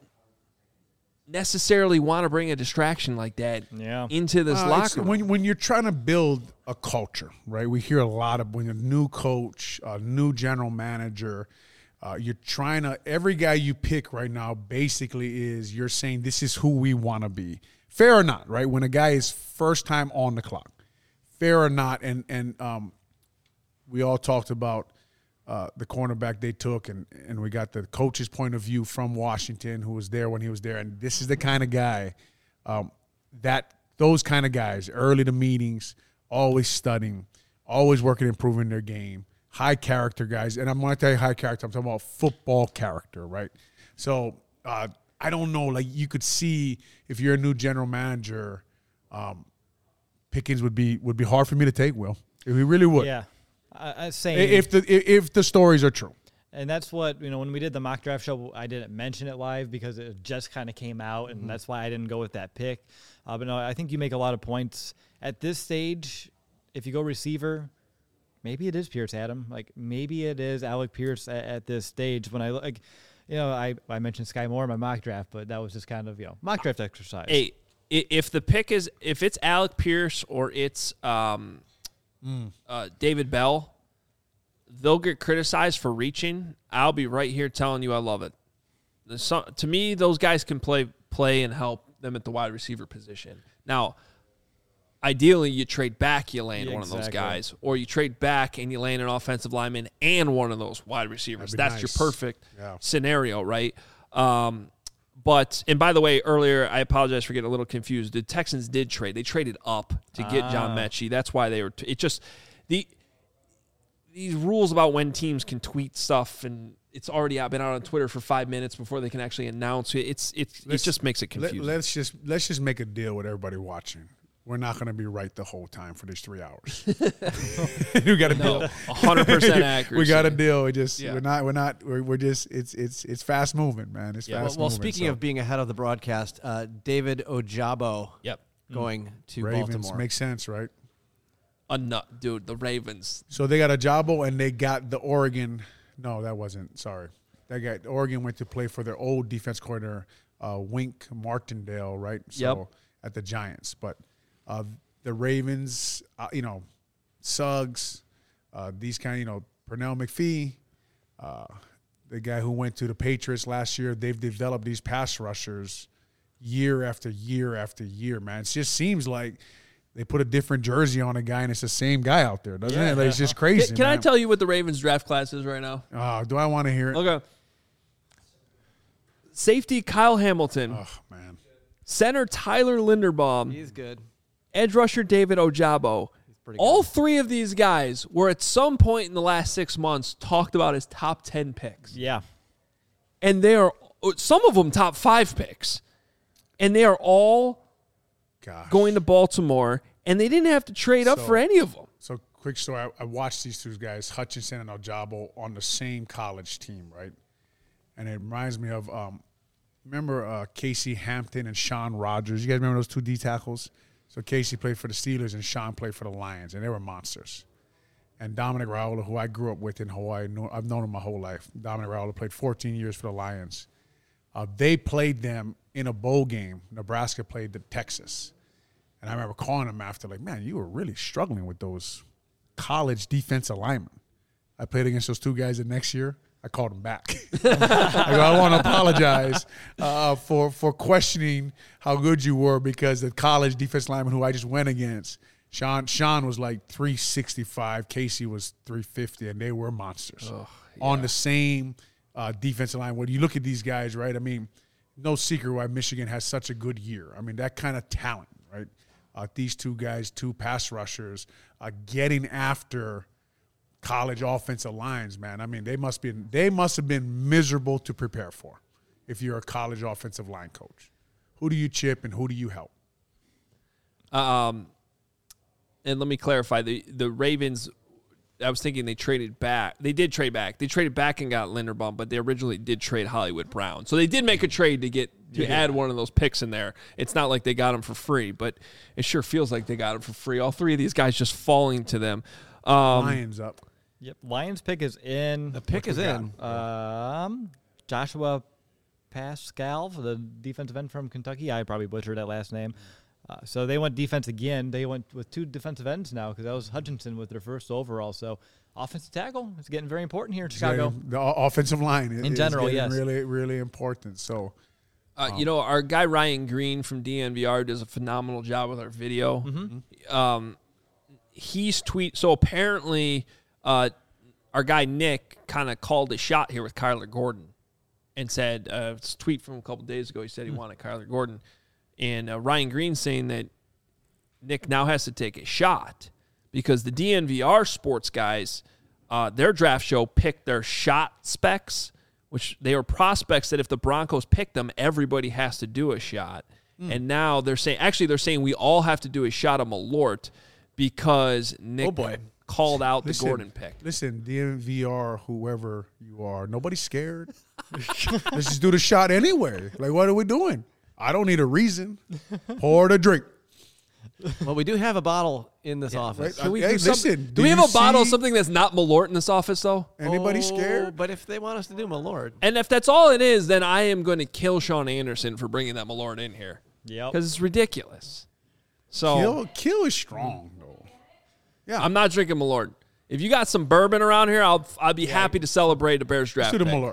necessarily want to bring a distraction like that Yeah. into this Uh, it's- locker room. when when you're trying to build a culture, right? We hear a lot of when a new coach, a new general manager, uh, you're trying to. Every guy you pick right now basically is you're saying this is who we want to be. Fair or not, right? When a guy is first time on the clock, fair or not, and and um, we all talked about uh, the cornerback they took, and, and we got the coach's point of view from Washington, who was there when he was there. And this is the kind of guy um, that those kind of guys, early to meetings, always studying, always working, improving their game, high character guys. And I'm going to tell you high character. I'm talking about football character, right? So uh, I don't know. Like you could see if you're a new general manager, um, Pickens would be would be hard for me to take. Will he really would? Yeah. I, I saying If the if the stories are true. And that's what, you know, when we did the mock draft show, I didn't mention it live because it just kind of came out, and Mm-hmm. that's why I didn't go with that pick. Uh, but no, I think you make a lot of points. At this stage, if you go receiver, maybe it is Pierce Adam. Like, maybe it is Alec Pierce at, at this stage. When I, like, you know, I, I mentioned Sky Moore in my mock draft, but that was just kind of, you know, mock draft exercise. Hey, i- if the pick is if it's Alec Pierce or it's um, uh, David Bell, they'll get criticized for reaching. I'll be right here telling you I love it. There's some, to me, those guys can play play and help them at the wide receiver position. Now, ideally, you trade back, you land Yeah, one of those exactly. guys, or you trade back and you land an offensive lineman and one of those wide receivers. That'd be That's nice. your perfect Yeah. scenario, right? Um, but, and by the way, earlier, I apologize for getting a little confused. The Texans did trade. They traded up to get John Ah. Mechie. That's why they were, t- it just, the, these rules about when teams can tweet stuff and it's already out, been out on Twitter for five minutes before they can actually announce it. It's, it's, it Let's- just makes it Let, confusing. us just let's just make a deal with everybody watching. We're not going to be right the whole time for these three hours. we got a No, deal. one hundred percent accuracy. We got a deal. We just Yeah. we're not we're not we're, we're just it's it's it's fast moving, man. It's Yeah. Well, fast well moving. speaking so. of being ahead of the broadcast, uh, David Ojabo Yep. going to Ravens, Baltimore. makes sense, right? A nut, dude. The Ravens. So they got a Jabo and they got the Oregon. No, that wasn't. Sorry, they got Oregon went to play for their old defense coordinator, uh, Wink Martindale, right? So Yep. at the Giants, but uh, the Ravens, uh, you know, Suggs, uh, these kind of, you know, Pernell McPhee, uh, the guy who went to the Patriots last year. They've developed these pass rushers year after year after year, man. It just seems like they put a different jersey on a guy and it's the same guy out there, doesn't yeah, it? Like, yeah. it's just crazy, Can, can man. I tell you what the Ravens draft class is right now? Oh, do I want to hear it? Okay. Safety Kyle Hamilton. Oh, man. Center Tyler Linderbaum. He's good. Edge rusher David Ojabo. Pretty All good. three of these guys were at some point in the last six months talked about as top ten picks. Yeah. And they are, some of them top five picks. And they are all Gosh. going to Baltimore, and they didn't have to trade up So- for any of them. So, quick story. I, I watched these two guys, Hutchinson and Ojabo, on the same college team, right? And it reminds me of, um, remember uh, Casey Hampton and Sean Rogers? You guys remember those two D tackles? So, Casey played for the Steelers and Sean played for the Lions, and they were monsters. And Dominic Raiola, who I grew up with in Hawaii, know, I've known him my whole life. Dominic Raiola played fourteen years for the Lions. Uh, they played them in a bowl game. Nebraska played the Texas. And I remember calling him after, like, man, you were really struggling with those college defensive linemen. I played against those two guys the next year. I called him back. I go, I want to apologize uh, for for questioning how good you were, because the college defense lineman who I just went against, Sean Sean was like three sixty-five, Casey was three fifty, and they were monsters Ugh, yeah. on the same uh, defensive line. When you look at these guys, right, I mean, no secret why Michigan has such a good year. I mean, that kind of talent, right? Uh, these two guys, two pass rushers, uh, getting after college offensive lines, man. I mean, they must be they must have been miserable to prepare for if you're a college offensive line coach. Who do you chip and who do you help? Um, and let me clarify, the the Ravens, I was thinking they traded back. They did trade back. They traded back and got Linderbaum, but they originally did trade Hollywood Brown. So they did make a trade to get to Yeah. add one of those picks in there. It's not like they got him for free, but it sure feels like they got him for free. All three of these guys just falling to them. Um, Lions up. Yep. Lions pick is in. The pick What is we in. Um, Joshua Pascal, the defensive end from Kentucky. I probably butchered that last name. Uh, so they went defense again. They went with two defensive ends now because that was Hutchinson with their first overall. So offensive tackle is getting very important here in Chicago. The o- offensive line is, In general, is getting yes. really, really important. So Uh, you know, our guy Ryan Green from D N V R does a phenomenal job with our video. Mm-hmm. Um, he's tweet. So apparently, uh, our guy Nick kind of called a shot here with Kyler Gordon, and said, uh, it's a tweet from a couple days ago. He said he Mm. wanted Kyler Gordon, and uh, Ryan Green saying that Nick now has to take a shot because the D N V R sports guys, uh, their draft show picked their shot specs, which they were prospects that if the Broncos pick them, everybody has to do a shot. Mm. And now they're saying, actually, they're saying we all have to do a shot of Malort because Nick Oh, boy. called out listen, the Gordon pick. Listen, D N V R, whoever you are, nobody's scared. Let's just do the shot anyway. Like, what are we doing? I don't need a reason. Pour the drink. Well, we do have a bottle in this office. right. Can we Hey, do something? listen, do, do we have you a bottle of see- something that's not Malort in this office, though? Anybody Oh, scared? But if they want us to do Malort, And if that's all it is, then I am going to kill Sean Anderson for bringing that Malort in here Yep. because it's ridiculous. So Kill, kill is strong, though. Yeah, I'm not drinking Malort. If you got some bourbon around here, I'll I'd be happy to celebrate a Bears draft. to the pick. Malort.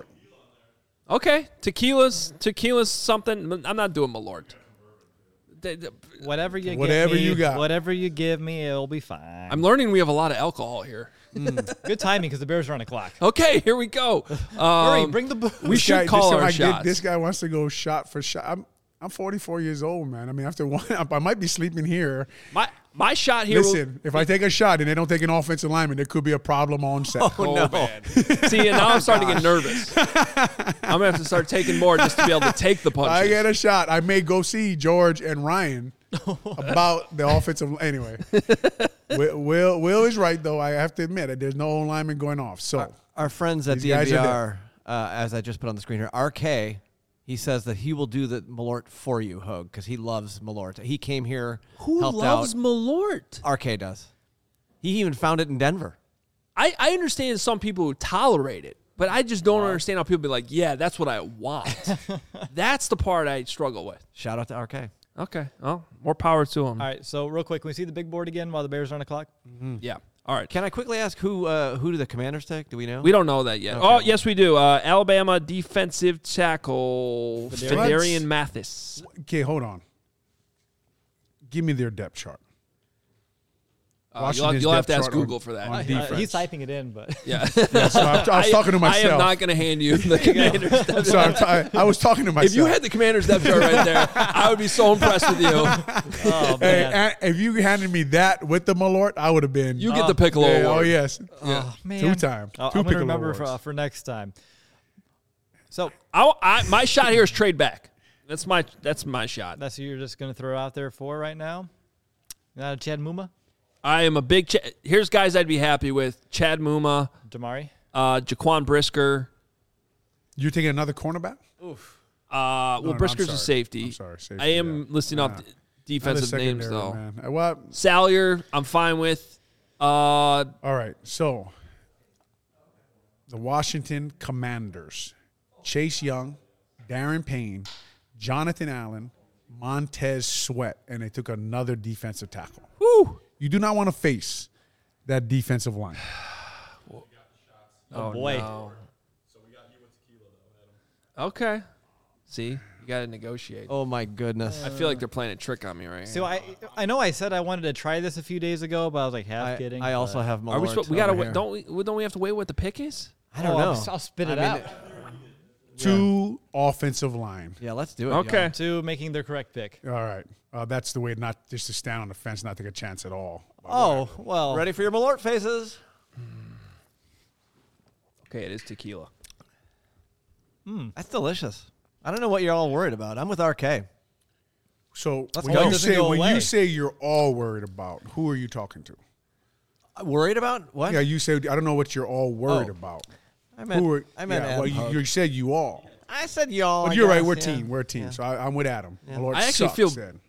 Okay, tequila's tequila's something. I'm not doing Malort. They- they- Whatever you Whatever give me, you got. Whatever you give me, it'll be fine. I'm learning we have a lot of alcohol here. Good timing because the Bears are on the clock. Okay, here we go. Hurry, Um, bring the booze. we This should guy- call this our guy- shots. This guy wants to go shot for shot. I'm, I'm forty-four years old, man. I mean, after one, I might be sleeping here. my my shot here. will- Listen, if I take a shot and they don't take an offensive lineman, there could be a problem on set. Oh, man. See, and now I'm starting to get nervous. I'm going to have to start taking more just to be able to take the punches. I get a shot. I may go see George and Ryan about the offensive. Anyway, Will, Will Will is right though. I have to admit it. There's no lineman going off. So our friends at These guys D N V are R, uh, as I just put on the screen here, R K, he says that he will do the Malort for you, Hogue, because he loves Malort. He came here, Who helped loves out. Malort? R K does. He even found it in Denver. I, I understand some people who tolerate it, but I just don't understand how people be like, yeah, that's what I want. That's the part I struggle with. Shout out to R K. Okay. Well, more power to him. All right, so real quick, can we see the big board again while the Bears are on the clock? Yeah. All right. Can I quickly ask who uh, who do the Commanders take? Do we know? We don't know that yet. Okay. Oh, yes, we do. Uh, Alabama defensive tackle Fidarian? Fidarian Mathis. Okay, hold on. Give me their depth chart. Uh, you'll have, you'll have to ask Google on, for that. On Uh, defense. he's typing it in, but Yeah. Yeah, so I, I was talking to myself. I am not going to hand you the Commanders depth So I'm t- I was talking to myself. If you had the Commanders depth chart right there, I would be so impressed with you. oh Hey, man, and if you handed me that with the Malort, I would have been. You get the Piccolo yeah, award. Oh yes, oh man, two time. I'll, two I'm gonna Piccolo remember awards. for, uh, for next time. So I, I, my shot here is trade back. That's my that's my shot. that's who you're just gonna throw out there for right now. Not a Chad Muma, I am a big. Ch- Here's guys I'd be happy with: Chad Muma, Damari. uh, Jaquan Brisker. You're taking another cornerback? Uh, well, no, no, Brisker's I'm a sorry. safety. I'm sorry, safety, I am yeah. listing off Yeah. d- defensive Another names secondary, though. Man. Uh, Well, Salyer, I'm fine with. Uh, all right. So the Washington Commanders: Chase Young, Darren Payne, Jonathan Allen, Montez Sweat, and they took another defensive tackle. whew. You do not want to face that defensive line. Oh, boy. No. Okay. See, you got to negotiate. Oh my goodness. I feel like they're playing a trick on me right So here. I I know I said I wanted to try this a few days ago, but I was like half I, kidding. I also but- have Malort Are we supposed? We gotta over wait. here. Don't we? well, Don't we have to wait what the pick is? I don't Oh, know. I'll, I'll spit it I mean, out. Two offensive line. Yeah, let's do it. Okay. y'all. To making their correct pick. All right. Uh, that's the way not just to stand on the fence, not take a chance at all. Oh well. Ready for your Malort faces? Okay, it is tequila. That's delicious. I don't know what you're all worried about. I'm with R K. So Let's when go. you It doesn't say go when away. you say you're all worried about, who are you talking to? Worried about what? Yeah, you said I don't know what you're all worried Oh. about. I meant. Who are, I meant. yeah, Adam well, you, Hogue. you said you all. I said y'all. But I you're right. guess, We're a yeah. team. We're a team. Yeah. So I, I'm with Adam. My Lord I actually sucks, feel- then.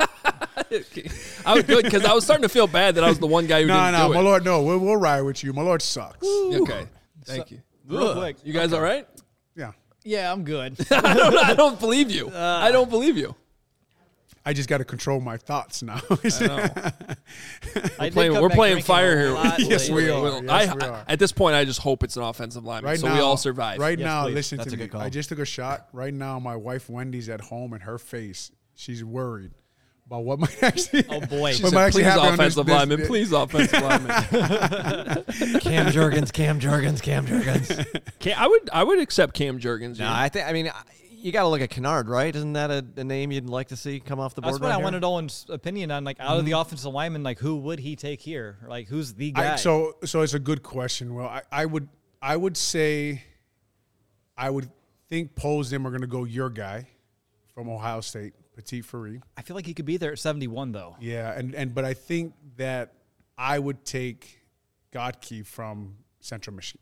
I was good because I was starting to feel bad that I was the one guy who No, didn't no, do my it. Lord, no. We'll, we'll ride with you. My Lord sucks. Okay, thank you. Real quick. You guys all right? Yeah. Yeah, I'm good. I don't. I don't believe you. I don't believe you. I just got to control my thoughts now. I We're did playing, come we're back playing drinking fire a here. lot Yes, we lately. are. Well, Yes, I, we are. At this point, I just hope it's an offensive lineman, Right so now, we all survive. Right Yes, now, please. listen That's to a me. good call. I just took a shot. Right now, my wife Wendy's at home, and her face, she's worried about what might actually. Oh boy. She What said, might actually please, happen on offensive this- this- lineman. this- Please, offensive lineman. Cam Jurgens. Cam Jurgens. Cam Jurgens. Cam, I would. I would accept Cam Jurgens. No, yeah. I think. I mean, I- you got to look at Kennard, right? Isn't that a, a name you'd like to see come off the board? That's what right I here? wanted Owen's opinion on. Like, out of the offensive lineman, like, who would he take here? Like, who's the guy? I, so, so it's a good question. Well, I, I would, I would say, I would think Poe's them are going to go your guy from Ohio State, Petit Free. I feel like he could be there at seventy-one, though. Yeah, and and but I think that I would take Godke from Central Michigan.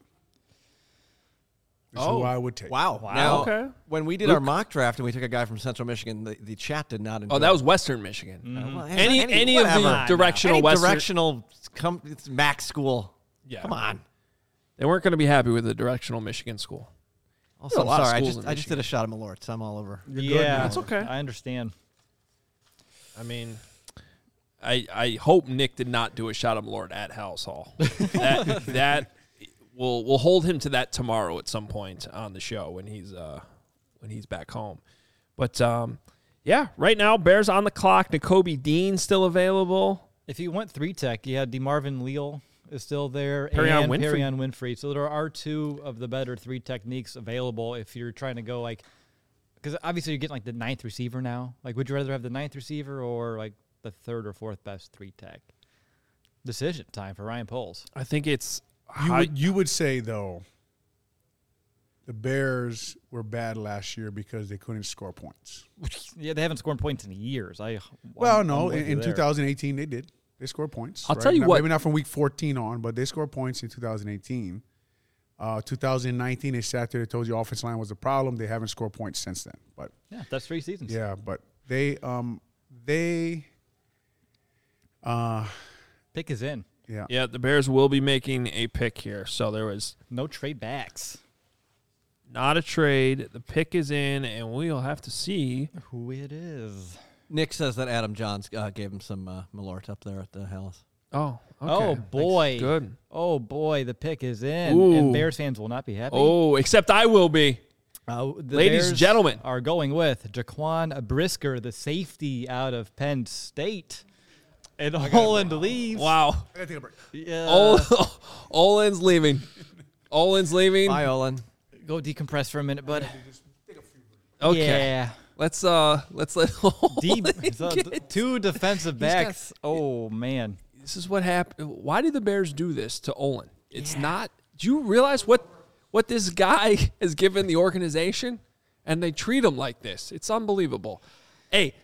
Is Oh, who I would take. Wow. Wow. Now, Okay. when we did our mock draft and we took a guy from Central Michigan, the, the chat did not enjoy Oh, that was Western Michigan. it. Well, Any any of whatever. the directional Any Western. directional come, it's Mac school. Yeah. Come on. They weren't going to be happy with the directional Michigan school. Also, There are a lot of sorry, I schools just in I just did a shot of Malort, so I'm all over. Yeah, That's okay. I understand. I mean, I I hope Nick did not do a shot of Lord at House Hall. that that we'll we'll hold him to that tomorrow at some point on the show when he's uh when he's back home. But um yeah, right now Bears on the clock. Nakobe Dean still available. If you went three tech, you had DeMarvin Leal is still there, Perrion and Winfrey. Perrion Winfrey. So there are two of the better three techniques available if you're trying to go like, because obviously you're getting like the ninth receiver now. Like, would you rather have the ninth receiver or like the third or fourth best three tech? Decision time for Ryan Poles. I think it's You high- would you would say though, the Bears were bad last year because they couldn't score points. Yeah, they haven't scored points in years. I Well, I'm- no, I'm with in, you in there. twenty eighteen they did. They scored points. I'll right? tell you Not- what- Maybe not from week fourteen on, but they scored points in two thousand eighteen. Uh, two thousand nineteen, they sat there. They told you offensive line was a problem. They haven't scored points since then. But Yeah, that's three seasons. yeah, but they um they uh Pick is in. yeah. yeah, the Bears will be making a pick here. So there was No trade backs. not a trade. The pick is in, and we'll have to see. Who it is. Nick says that Adam Johns uh, gave him some uh, Malort up there at the Hallis. Oh, Okay. Oh, boy. Thanks. Good. Oh, boy. The pick is in. Ooh. And Bears fans will not be happy. Oh, except I will be. Uh, the Ladies and Bears gentlemen. are going with Jaquan Brisker, the safety out of Penn State. And Holland leaves. Wow. I gotta take a break. Yeah. Ol- Olin's leaving. Olin's leaving. Bye, Olin. Go decompress for a minute, bud. Okay. Yeah. Let's uh let's let Deep, Olin so get- th- two defensive He's got- backs. Oh, man. This is what happened. Why did the Bears do this to Olin? It's not. Do you realize what what this guy has given the organization? And they treat him like this. It's unbelievable. Hey.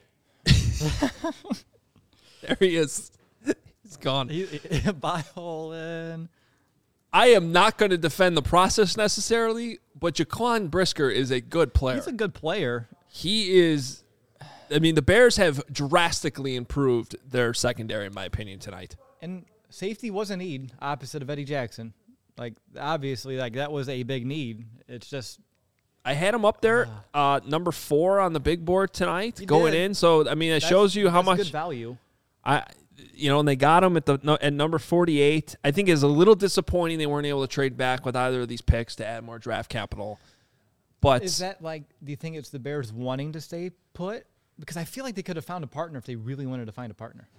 There he is. He's gone. He, bye, Holland. I am not going to defend the process necessarily, but Jaquan Brisker is a good player. He's a good player. He is. I mean, the Bears have drastically improved their secondary, in my opinion, tonight. And safety was a need opposite of Eddie Jackson. Like, obviously, like that was a big need. It's just I had him up there, uh, number four on the big board tonight, You going did. in. So I mean, it that's- shows you how that's much good value. I, you know, and they got him at the no, at number forty-eight. I think it's a little disappointing they weren't able to trade back with either of these picks to add more draft capital. But Is that like? Do you think it's the Bears wanting to stay put? Because I feel like they could have found a partner if they really wanted to find a partner.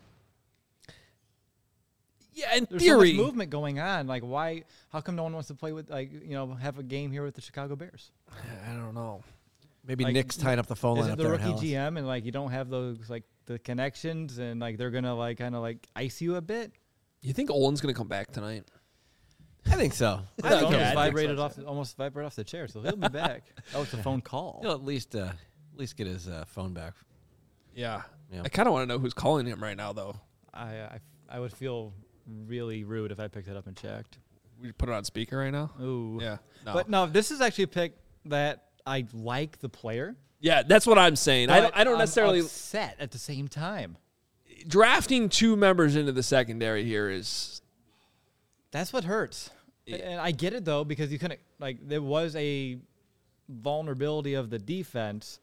yeah, in There's theory, so much movement going on. Like, why? How come no one wants to play with, like, you know, have a game here with the Chicago Bears? I don't know. Maybe Like, Nick's tying up the phone Is line it up the there in rookie Dallas. G M and like you don't have those like the connections and like they're gonna like kind of like ice you a bit? You think Olin's going to come back tonight? I think so. I I think almost he'll- I think vibrated so. off, the, almost vibrated off the chair, so he'll be back. That was a phone call. He'll at least, uh, at least get his uh, phone back. Yeah. Yeah. I kind of want to know who's calling him right now, though. I, I I would feel really rude if I picked it up and checked. We put it on speaker right now. Ooh. Yeah. No. But no, this is actually a pick that I like the player. yeah, that's what I'm saying. I don't, but I don't I'm necessarily upset at the same time. drafting two members into the secondary here is That's what hurts. And I get it though because you couldn't like there was a vulnerability of the defense.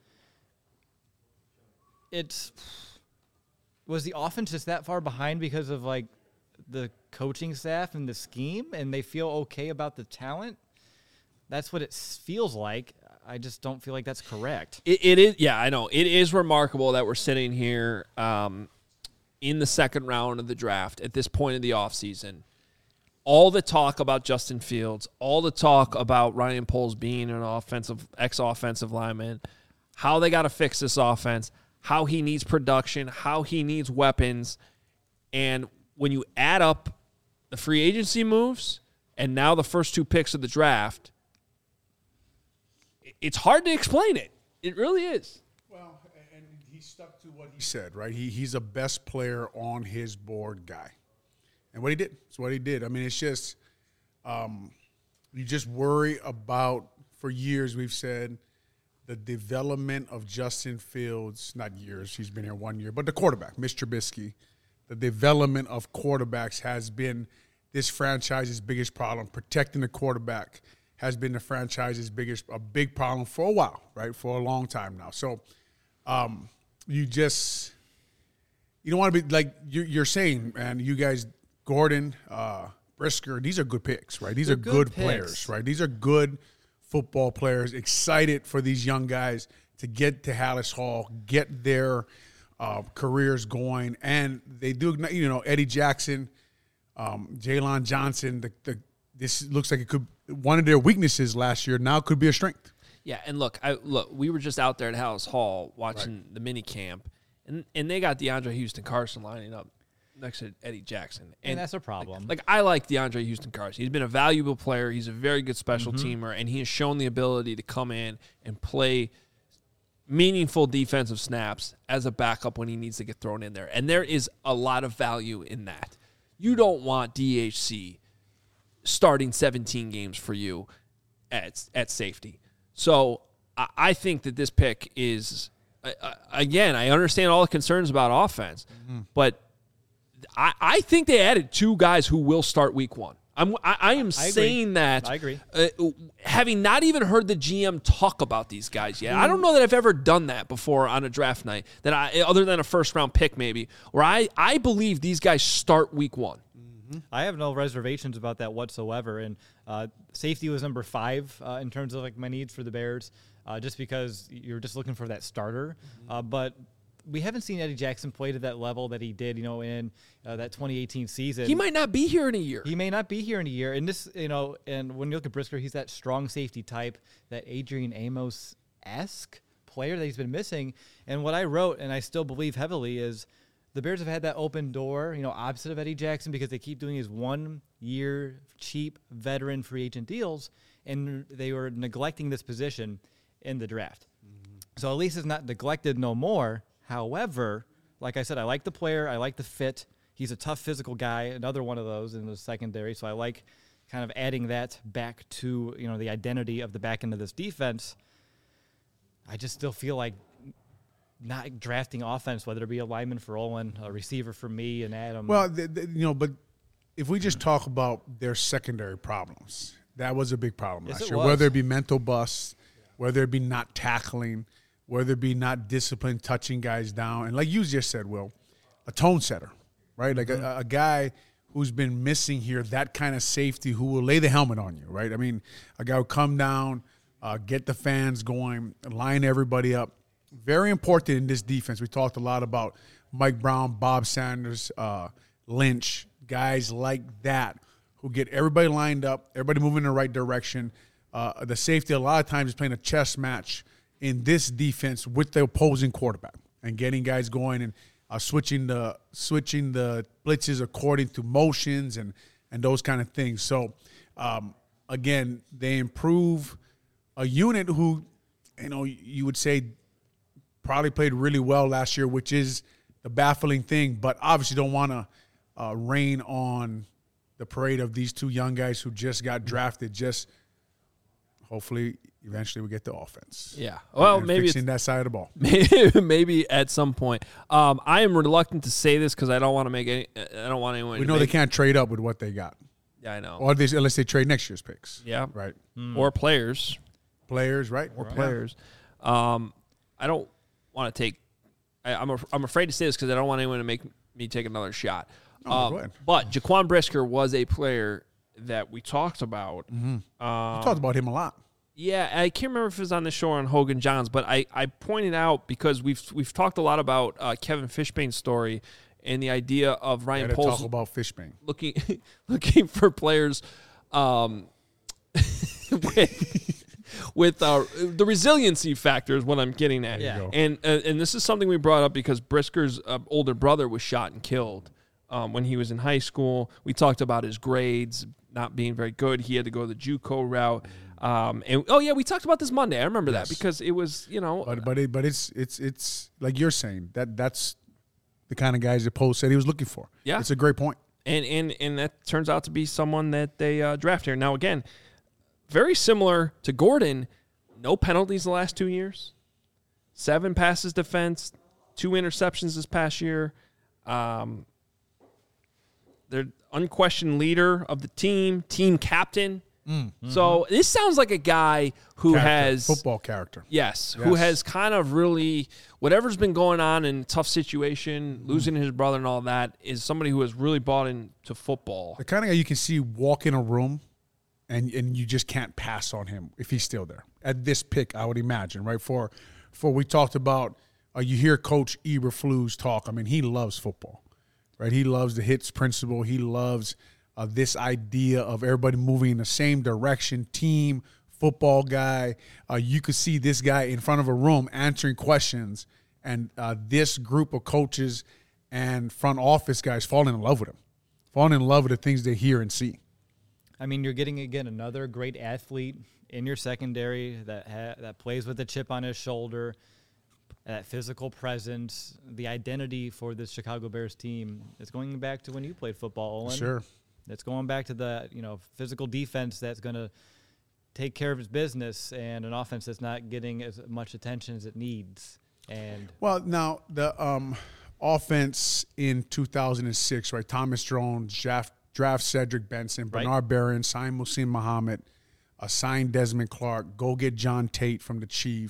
It's was the offense just that far behind because of like the coaching staff and the scheme, and they feel okay about the talent. That's what it s- feels like. I just don't feel like that's correct. It, it is, yeah, I know. It is remarkable that we're sitting here um, in the second round of the draft at this point of the offseason. All the talk about Justin Fields, all the talk about Ryan Poles being an offensive ex-offensive lineman, how they got to fix this offense, how he needs production, how he needs weapons. And when you add up the free agency moves and now the first two picks of the draft, it's hard to explain it. It really is. Well, and he stuck to what he said, right? He he's a best player on his board guy, and what he did. It's what he did. I mean, it's just um, you just worry about. For years, we've said the development of Justin Fields. Not years. He's been here one year, but the quarterback, Mister Trubisky. The development of quarterbacks has been this franchise's biggest problem. Protecting the quarterback has been the franchise's biggest, a big problem for a while, right? For a long time now. So um, you just, you don't want to be like you're, you're saying, man, you guys, Gordon, uh, Brisker, these are good picks, right? These They're are good good, picks. players, right? These are good football players, excited for these young guys to get to Hallis Hall, get their uh, careers going. And they do, you know, Eddie Jackson, um, Jalen Johnson, the, the this looks like it could one of their weaknesses last year now could be a strength. Yeah, and look, I look, we were just out there at Hallis Hall watching Right. the mini camp, and and they got DeAndre Houston Carson lining up next to Eddie Jackson, And that's a problem. Like, I like DeAndre Houston Carson. He's been a valuable player. He's a very good special Mm-hmm. teamer, and he has shown the ability to come in and play meaningful defensive snaps as a backup when he needs to get thrown in there. And there is a lot of value in that. You don't want D H C starting seventeen games for you at at safety. So I, I think that this pick is, uh, uh, again, I understand all the concerns about offense, Mm-hmm. but I, I think they added two guys who will start week one. I'm, I, I am I agree. saying that. I agree. Uh, having not even heard the G M talk about these guys yet. I don't know that I've ever done that before on a draft night, that I, other than a first round pick maybe, where I, I believe these guys start week one. Mm-hmm. I have no reservations about that whatsoever. And uh, safety was number five uh, in terms of like my needs for the Bears, uh, just because you're just looking for that starter. Mm-hmm. Uh, but we haven't seen Eddie Jackson play to that level that he did, you know, in uh, that twenty eighteen season. He might not be here in a year. He may not be here in a year. And this, you know, and when you look at Brisker, he's that strong safety type, that Adrian Amos-esque player that he's been missing. And what I wrote, and I still believe heavily, is the Bears have had that open door, you know, opposite of Eddie Jackson, because they keep doing his one-year cheap veteran free agent deals, and they were neglecting this position in the draft. Mm-hmm. So at least it's not neglected no more. However, like I said, I like the player. I like the fit. He's a tough physical guy, another one of those in the secondary. So I like kind of adding that back to, you know, the identity of the back end of this defense. I just still feel like not drafting offense, whether it be a lineman for Owen, a receiver for me and Adam. Well, the, the, you know, but if we just talk about their secondary problems, that was a big problem yes, last it year. was. Whether it be mental busts, whether it be not tackling, whether it be not disciplined, touching guys down. And like you just said, Will, a tone setter, right? Like mm-hmm. a, a guy who's been missing here, that kind of safety who will lay the helmet on you, right? I mean, a guy who come down, uh, get the fans going, line everybody up. Very important in this defense. We talked a lot about Mike Brown, Bob Sanders, uh, Lynch, guys like that who get everybody lined up, everybody moving in the right direction. Uh, the safety a lot of times is playing a chess match in this defense with the opposing quarterback and getting guys going and uh, switching the switching the blitzes according to motions and, and those kind of things. So, um, again, they improve a unit who, you know, you would say probably played really well last year, which is the baffling thing, but obviously don't want to uh, rain on the parade of these two young guys who just got drafted. Just hopefully – eventually we get the offense. Yeah. Well, and maybe fixing it's, that side of the ball. Maybe, maybe at some point. Um, I am reluctant to say this because I don't want to make any. I don't want anyone. We to know make, they can't trade up with what they got. Yeah, I know. Or they, unless they trade next year's picks. Yeah. Right. Mm. Or players. Players, right? Or right. players. Um, I don't want to take. I, I'm a, I'm afraid to say this because I don't want anyone to make me take another shot. Oh, um, go ahead. But Jaquan Brisker was a player that we talked about. Mm-hmm. Um, we talked about him a lot. Yeah, I can't remember if it was on the show or on Hogan Johns, but I, I pointed out because we've we've talked a lot about uh, Kevin Fishbane's story and the idea of Ryan Poles talk about Fishbane looking looking for players um, with, with uh, the resiliency factor is what I'm getting at. Yeah. And uh, and this is something we brought up because Brisker's uh, older brother was shot and killed um, when he was in high school. We talked about his grades not being very good. He had to go the JUCO route. Um, and oh yeah, we talked about this Monday. I remember yes. that because it was, you know, but but it, but it's it's it's like you're saying that that's the kind of guys that Poles said he was looking for. Yeah, it's a great point. And and and that turns out to be someone that they uh, draft here. Now again, very similar to Gordon, no penalties the last two years, seven passes defense, two interceptions this past year. Um, they're unquestioned leader of the team, team captain. Mm-hmm. So this sounds like a guy who character, has football character. Yes, yes, who has kind of really whatever's been going on in a tough situation, mm. losing his brother and all that, is somebody who has really bought into football. The kind of guy you can see walk in a room, and and you just can't pass on him if he's still there at this pick. I would imagine, right? For for we talked about, uh, you hear Coach Eberflus talk. I mean, he loves football, right? He loves the hits principle. He loves. Uh, this idea of everybody moving in the same direction, team, football guy. Uh, you could see this guy in front of a room answering questions, and uh, this group of coaches and front office guys falling in love with him, falling in love with the things they hear and see. I mean, you're getting, again, another great athlete in your secondary that ha- that plays with a chip on his shoulder, that physical presence, the identity for this Chicago Bears team. It's going back to when you played football, Owen. Sure. It's going back to the, you know, physical defense that's going to take care of its business, and an offense that's not getting as much attention as it needs. And well, now the um, offense in two thousand six, right? Thomas Jones draft, draft Cedric Benson, Bernard right. Barron, sign Muhsin Muhammad, uh, sign Desmond Clark, go get John Tate from the Chiefs,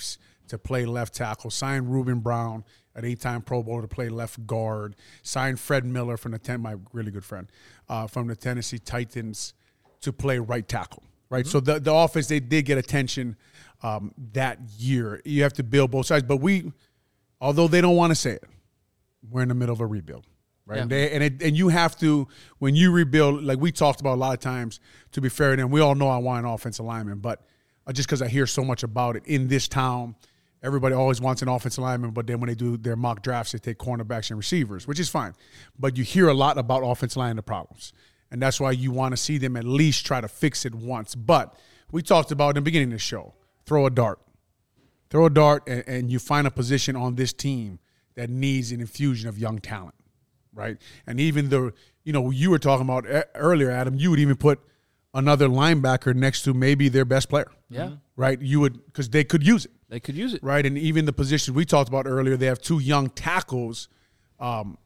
to play left tackle. Signed Reuben Brown, an eight-time Pro Bowler, to play left guard. Signed Fred Miller from the ten, my really good friend, uh, from the Tennessee Titans to play right tackle. Right, mm-hmm. So the the offense, they did get attention um, that year. You have to build both sides, but we, although they don't want to say it, we're in the middle of a rebuild. Right, yeah. and they, and, it, and you have to, when you rebuild, like we talked about a lot of times. To be fair to them, we all know I want an offensive lineman, but just because I hear so much about it in this town, everybody always wants an offensive lineman. But then when they do their mock drafts, they take cornerbacks and receivers, which is fine. But you hear a lot about offensive line and the problems, and that's why you want to see them at least try to fix it once. But we talked about in the beginning of the show, throw a dart, throw a dart, and, and you find a position on this team that needs an infusion of young talent. Right, and even the, you know, you were talking about earlier, Adam, you would even put another linebacker next to maybe their best player. Yeah. Right, you would, because they could use it. They could use it. Right, and even the position we talked about earlier, they have two young tackles, um,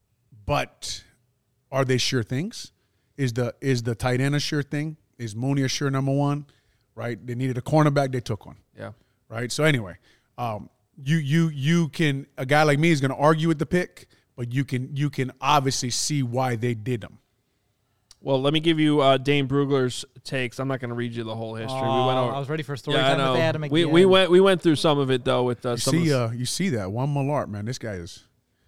but are they sure things? Is the is the tight end a sure thing? Is Mooney a sure number one? Right, they needed a cornerback, they took one. Yeah. Right, so anyway, um, you you you can, a guy like me is going to argue with the pick. But you can you can obviously see why they did them. Well, let me give you uh, Dane Brugler's takes. I'm not going to read you the whole history. Oh, we went over. I was ready for a story yeah, time with Adam again. We we went we went through some of it though with uh, you some. See, of uh, you see that one Malart, man. This guy is.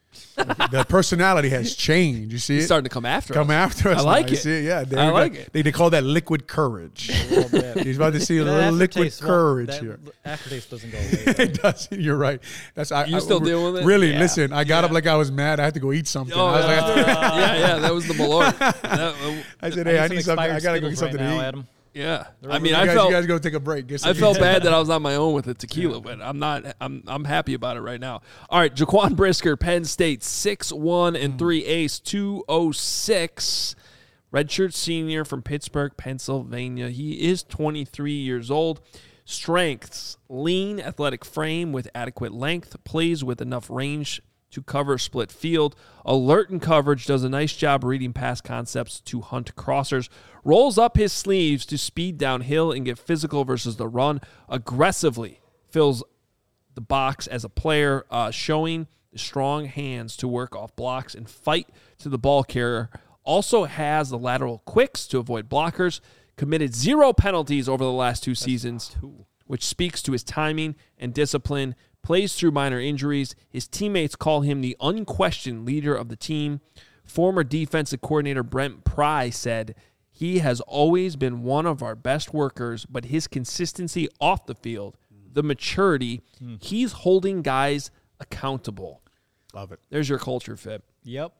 The personality has changed. You see He's it? starting to come after come us. after us. I like now. it. You see it? Yeah, I like got, it. They, they call that liquid courage. He's about to see a That little liquid aftertaste courage won't- here. that Aftertaste doesn't go away. It does. You're right. That's I, You I, still dealing with it? Really? Yeah. Listen, I got Yeah. up like I was mad. I had to go eat something. Oh, I was yeah. like, yeah, yeah, that was the Malort. That, uh, I said, hey, I need, some something. I expired gotta go get Skittles something right to now, eat. Adam. yeah. I You mean, I guys, felt you guys go take a break. Get some I felt eat. bad that I was on my own with the tequila, but I'm not. I'm I'm happy about it right now. All right, Jaquan Brisker, Penn State, six one and three ace, two oh six. Redshirt senior from Pittsburgh, Pennsylvania. He is twenty-three years old. Strengths: lean, athletic frame with adequate length. Plays with enough range to cover split field. Alert in coverage, does a nice job reading pass concepts to hunt crossers. Rolls up his sleeves to speed downhill and get physical versus the run. Aggressively fills the box as a player, uh, showing the strong hands to work off blocks and fight to the ball carrier. Also has the lateral quicks to avoid blockers. Committed zero penalties over the last two seasons, which speaks to his timing and discipline. Plays through minor injuries. His teammates call him the unquestioned leader of the team. Former defensive coordinator Brent Pry said, he has always been one of our best workers, but his consistency off the field, the maturity, mm. he's holding guys accountable. Love it. There's your culture fit. Yep.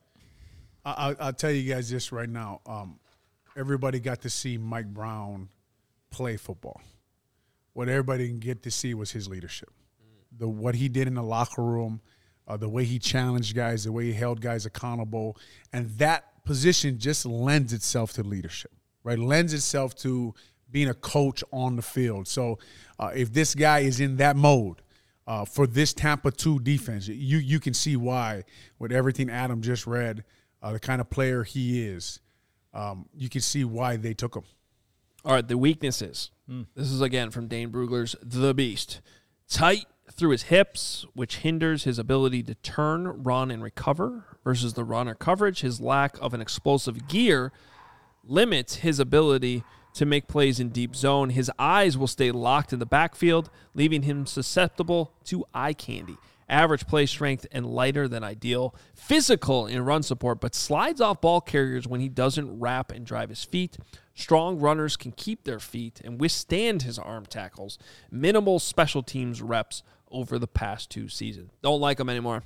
I, I'll tell you guys this right now. Um, everybody got to see Mike Brown play football. What everybody didn't get to see was his leadership. The what he did in the locker room, uh, the way he challenged guys, the way he held guys accountable, and that position just lends itself to leadership, right? Lends itself to being a coach on the field. So uh, if this guy is in that mode uh, for this Tampa two defense, you you can see why with everything Adam just read, uh, the kind of player he is, um, you can see why they took him. All right, the weaknesses. Mm. This is, again, from Dane Brugler's The Beast. Tight through his hips, which hinders his ability to turn, run, and recover versus the runner coverage. His lack of an explosive gear limits his ability to make plays in deep zone. His eyes will stay locked in the backfield, leaving him susceptible to eye candy. Average play strength and lighter than ideal. Physical in run support, but slides off ball carriers when he doesn't wrap and drive his feet. Strong runners can keep their feet and withstand his arm tackles. Minimal special teams reps over the past two seasons. Don't like him anymore.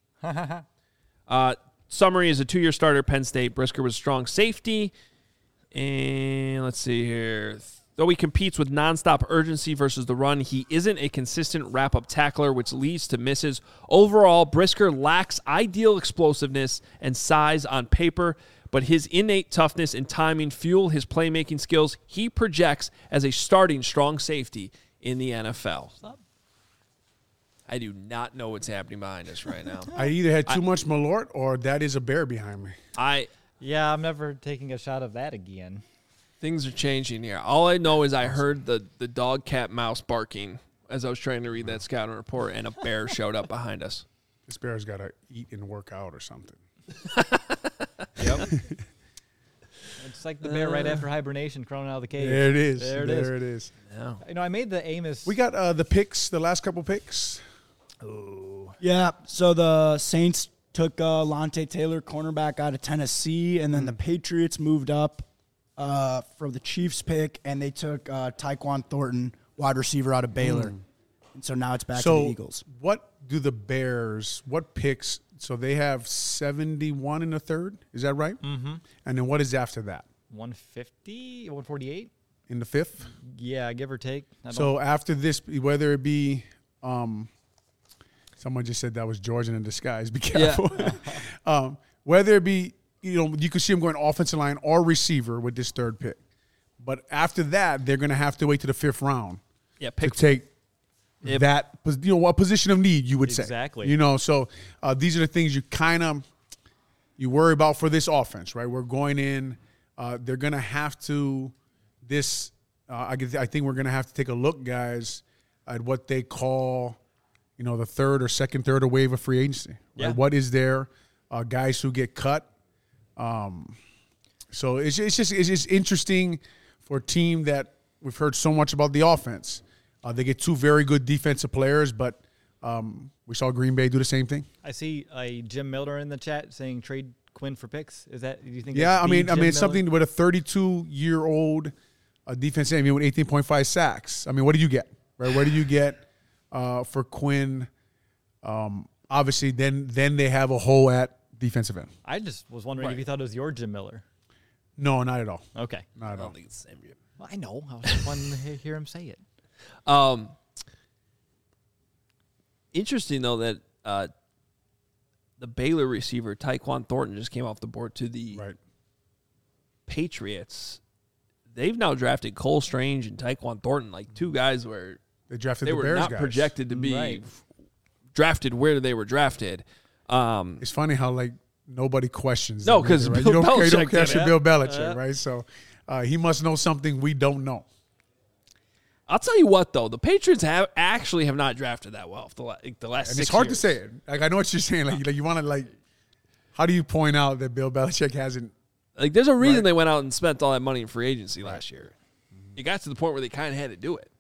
uh, summary is a two-year starter at Penn State. Brisker was a strong safety. And let's see here. Though he competes with nonstop urgency versus the run, he isn't a consistent wrap-up tackler, which leads to misses. Overall, Brisker lacks ideal explosiveness and size on paper, but his innate toughness and timing fuel his playmaking skills. He projects as a starting strong safety in the N F L. I do not know what's happening behind us right now. I either had too I, much Malort or that is a bear behind me. I Yeah, I'm never taking a shot of that again. Things are changing here. All I know is I heard the, the dog, cat, mouse barking as I was trying to read that scouting report, and a bear showed up behind us. This bear's got to eat and work out or something. Yep. It's like the bear right after hibernation crawling out of the cave. There it is. There it there is. it is. Yeah. You know, I made the Amos. We got uh, the picks, the last couple picks. Oh. Yeah, so the Saints took uh, Lante Taylor, cornerback out of Tennessee, and then the Patriots moved up uh, for the Chiefs pick, and they took uh, Tyquan Thornton, wide receiver out of Baylor. Mm. And so now it's back so to the Eagles. What do the Bears, what picks, so they have seventy-one in the third, is that right? Mm-hmm. And then what is after that? one fifty, one forty-eight? In the fifth? Yeah, give or take. I So after this, whether it be, um, someone just said that was Georgian in disguise. Be careful. Yeah. um, whether it be, you know, you could see them going offensive line or receiver with this third pick. But after that, they're going to have to wait to the fifth round Yeah, pick to take If, that, you know, a position of need, you would exactly. say. Exactly. You know, so uh, these are the things you kind of, you worry about for this offense, right? We're going in, uh, they're going to have to, this, uh, I, guess, I think we're going to have to take a look, guys, at what they call, you know, the third or second, third or wave of free agency. Right? Yeah. What is there? Uh, guys who get cut. Um, so it's, it's just it's just interesting for a team that we've heard so much about the offense. Uh, they get two very good defensive players, but um, we saw Green Bay do the same thing. I see a Jim Miller in the chat saying trade Quinn for picks. Is that, do you think? Yeah, that's I mean, the I Jim mean, it's Miller? something with a thirty-two-year-old uh, defensive end with eighteen point five sacks. I mean, what do you get? Right? Where do you get uh, for Quinn? Um, obviously, then then they have a hole at defensive end. I just was wondering Right. if you thought it was your Jim Miller. No, not at all. Okay. Not I at all. don't think it's the same year. Well, I know. I was just wanting to he- hear him say it. Um, interesting, though, that uh, the Baylor receiver, Tyquan Thornton, just came off the board to the Right. Patriots. They've now drafted Cole Strange and Tyquan Thornton, like two guys where They drafted they the were Bears not guys. projected to be Right. f- drafted where they were drafted. Um, It's funny how like nobody questions. No, them 'cause either, right? Bill you don't, you Belichick don't did question it. Bill Belichick, Yeah. right? So uh, he must know something we don't know. I'll tell you what, though, the Patriots have actually have not drafted that well for the, la- like, the last And six it's hard years. to say it. Like I know what you're saying. Like, like you want to like, how do you point out that Bill Belichick hasn't? Like, there's a reason Right. they went out and spent all that money in free agency last year. It got to the point where they kind of had to do it.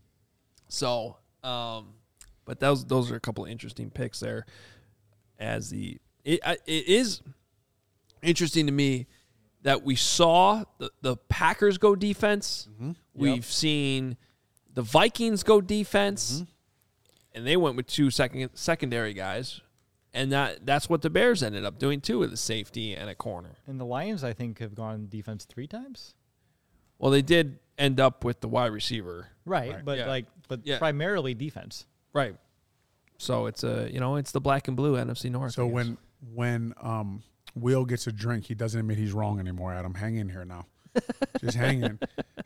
So, um, but those those are a couple of interesting picks there. As the it I- it is interesting to me that we saw the, the Packers go defense. We've Yep. seen the Vikings go defense, and they went with two second secondary guys. And that that's what the Bears ended up doing, too, with a safety and a corner. And the Lions, I think, have gone defense three times. Well, they did end up with the wide receiver. Right, Right. but Yeah. like, but Yeah. primarily defense. Right. So it's a, you know, it's the black and blue N F C North. So I guess. when when um, Will gets a drink, he doesn't admit he's wrong anymore. Adam, hang in here now. Just hang in.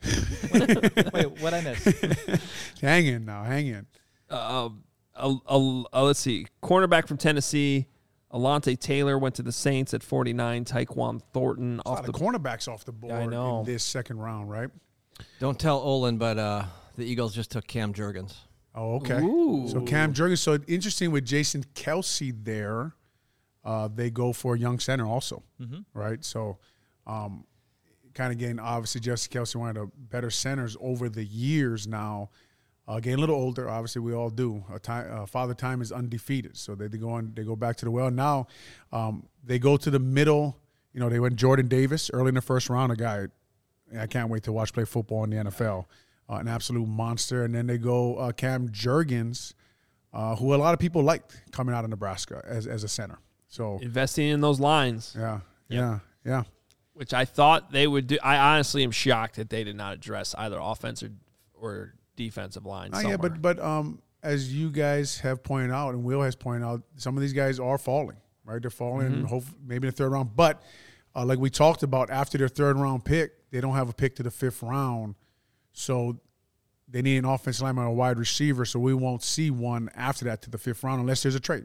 Wait, what I missed? Hang in now. Hang in. uh, uh, uh, uh, let's see, cornerback from Tennessee, Alante Taylor went to the Saints at forty-nine. Tyquan Thornton A off lot the of cornerbacks off the board I know. in this second round, right? Don't tell Olin, but uh, the Eagles just took Cam Jurgens. Oh, okay. Ooh. So Cam Jurgens. So interesting with Jason Kelsey there. Uh, they go for a young center also, Mm-hmm. right? So um, kind of getting, obviously, Jason Kelsey, one of the better centers over the years now. Uh, getting a little older, obviously we all do. A time, uh, Father Time is undefeated, so they, they go on. They go back to the well. Now um, they go to the middle. You know, they went Jordan Davis early in the first round. A guy I can't wait to watch play football in the N F L. Uh, an absolute monster. And then they go uh, Cam Jurgens, uh, who a lot of people liked coming out of Nebraska as as a center. So investing in those lines, yeah, Yep. yeah, yeah. which I thought they would do. I honestly am shocked that they did not address either offense or, or defensive line. Oh, yeah, somewhere. but but um, as you guys have pointed out, and Will has pointed out, some of these guys are falling, right? They're falling, Mm-hmm. hope, maybe in the third round. But uh, like we talked about, after their third round pick, they don't have a pick to the fifth round, so they need an offensive lineman or a wide receiver. So we won't see one after that to the fifth round unless there's a trade.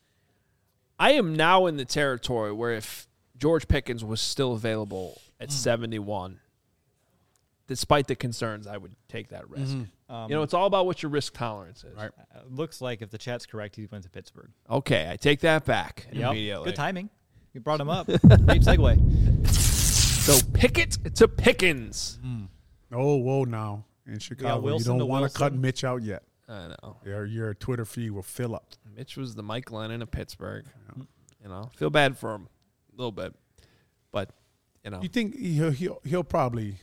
I am now in the territory where if George Pickens was still available at seventy-one, despite the concerns, I would take that risk. Mm-hmm. Um, You know, it's all about what your risk tolerance is. Right. uh, looks like if the chat's correct, he went to Pittsburgh. Okay, I take that back Yep. immediately. Good timing. You brought him up. Great segue. So Pickett to Pickens. Mm. Oh, whoa, now in Chicago, you Wilson to don't want to cut Wilson. Mitch out yet. I know. Your your Twitter feed will fill up. Mitch was the Mike Lennon of Pittsburgh. You know, feel bad for him a little bit, but you know, You think he'll he'll, he'll probably?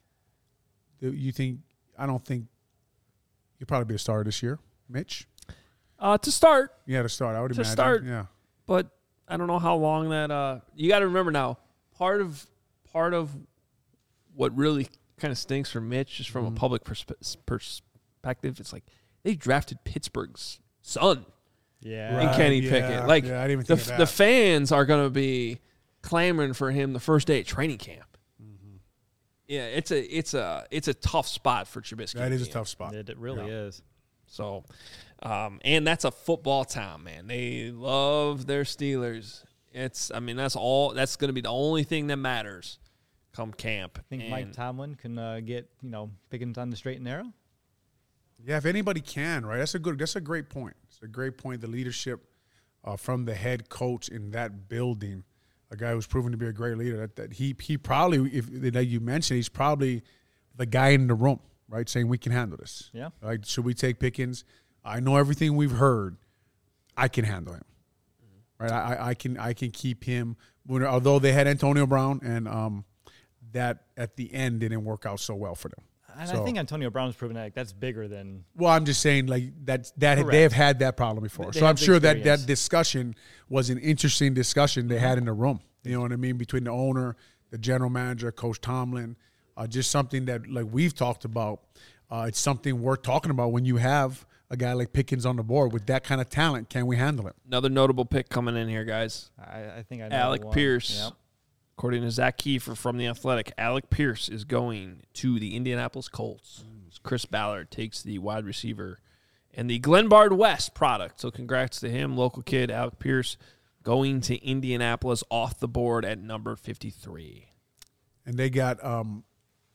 You think? I don't think he'll probably be a starter this year, Mitch. uh, to start, Yeah, to start. I would To imagine. start. Yeah. but I don't know how long that. Uh, you got to remember now, part of part of what really kind of stinks for Mitch, just from Mm-hmm. a public perspe- perspective, it's like they drafted Pittsburgh's son Yeah. in Kenny yeah, Pickett. Like yeah, I didn't even the think of the that. fans are going to be clamoring for him the first day of training camp. Mm-hmm. Yeah, it's a it's a it's a tough spot for Trubisky. That is a Yeah. tough spot. It, it really Yeah. is. So, um, and that's a football town, man. They love their Steelers. It's, I mean, that's all. That's going to be the only thing that matters come camp. I think And Mike Tomlin can uh, get, you know, Pickens on the straight and narrow. Yeah, if anybody can, right? That's a good. That's a great point. It's a great point. The leadership uh, from the head coach in that building, a guy who's proven to be a great leader. That, that he he probably, if that you mentioned, he's probably the guy in the room, right? Saying we can handle this. Yeah. Right? Should we take Pickens? I know everything we've heard. I can handle him. Right? I, I- I can I can keep him. Although they had Antonio Brown, and um, that at the end didn't work out so well for them. And So- I think Antonio Brown's proven that like, that's bigger than Well, I'm just saying, like that that Correct. they have had that problem before. They so I'm have the sure that experience. that discussion was an interesting discussion they had in the room. You know what I mean, between the owner, the general manager, Coach Tomlin, uh, just something that like we've talked about. Uh, it's something worth talking about when you have a guy like Pickens on the board with that kind of talent. Can we handle it? another notable pick coming in here, guys. I, I think I know Alec one. Pierce. Yep. According to Zach Kiefer from The Athletic, Alec Pierce is going to the Indianapolis Colts. Chris Ballard takes the wide receiver and the Glenbard West product. So congrats to him, local kid, Alec Pierce, going to Indianapolis off the board at number fifty-three. And they got um,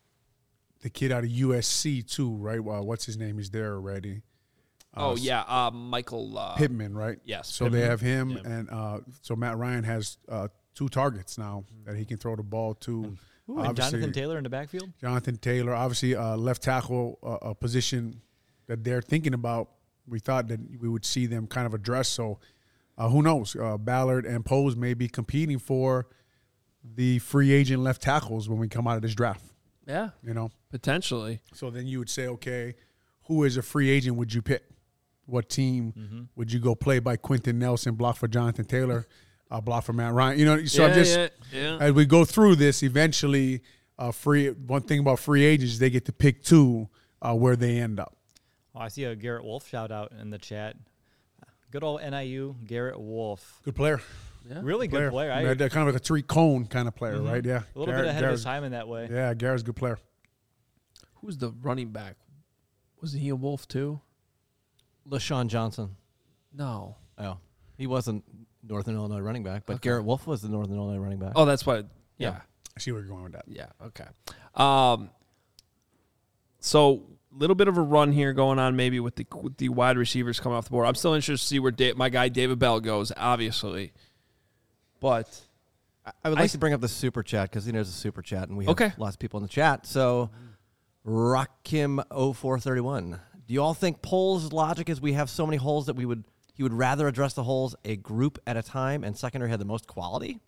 the kid out of U S C too, right? Well, what's his name? He's there already. Uh, Oh, yeah, uh, Michael uh, Pittman, right? Yes, So Pittman. they have him, Yeah. and uh, so Matt Ryan has uh, two targets now that he can throw the ball to. Ooh, and Obviously, Jonathan Taylor in the backfield. Jonathan Taylor, obviously, uh, left tackle, uh, a position that they're thinking about. We thought that we would see them kind of address. So uh, who knows? Uh, Ballard and Pose may be competing for the free agent left tackles when we come out of this draft. Yeah, You know, potentially. so then you would say, okay, who is a free agent would you pick? What team Mm-hmm. would you go play by Quentin Nelson, block for Jonathan Taylor, uh, block for Matt Ryan? You know, so yeah, I'm just yeah, yeah. as we go through this, eventually, uh, free. One thing about free agents, is they get to pick two uh, where they end up. Oh, I see a Garrett Wolf shout out in the chat. Good old N I U Garrett Wolf. Good player, Yeah. Really good player. I, They're, they're kind of like a Tariq Cohn kind of player, right? Yeah, a little Garrett- bit ahead Garrett's- of his time in that way. Yeah, Garrett's a good player. Who's the running back? Was he a Wolf too? LaShawn Johnson. No. Oh, he wasn't Northern Illinois running back, but Okay. Garrett Wolf was the Northern Illinois running back. Oh, that's what. Yeah. Yeah. I see where you're going with that. Yeah. Okay. Um. So, little bit of a run here going on, maybe with the with the wide receivers coming off the board. I'm still interested to see where Da- my guy David Bell goes, obviously. But I- I would like I- to bring up the super chat because you know there's a super chat and we have Okay. lots of people in the chat. So, Rockim oh four thirty-one. Do you all think Poles' logic is we have so many holes that we would he would rather address the holes a group at a time and secondary had the most quality?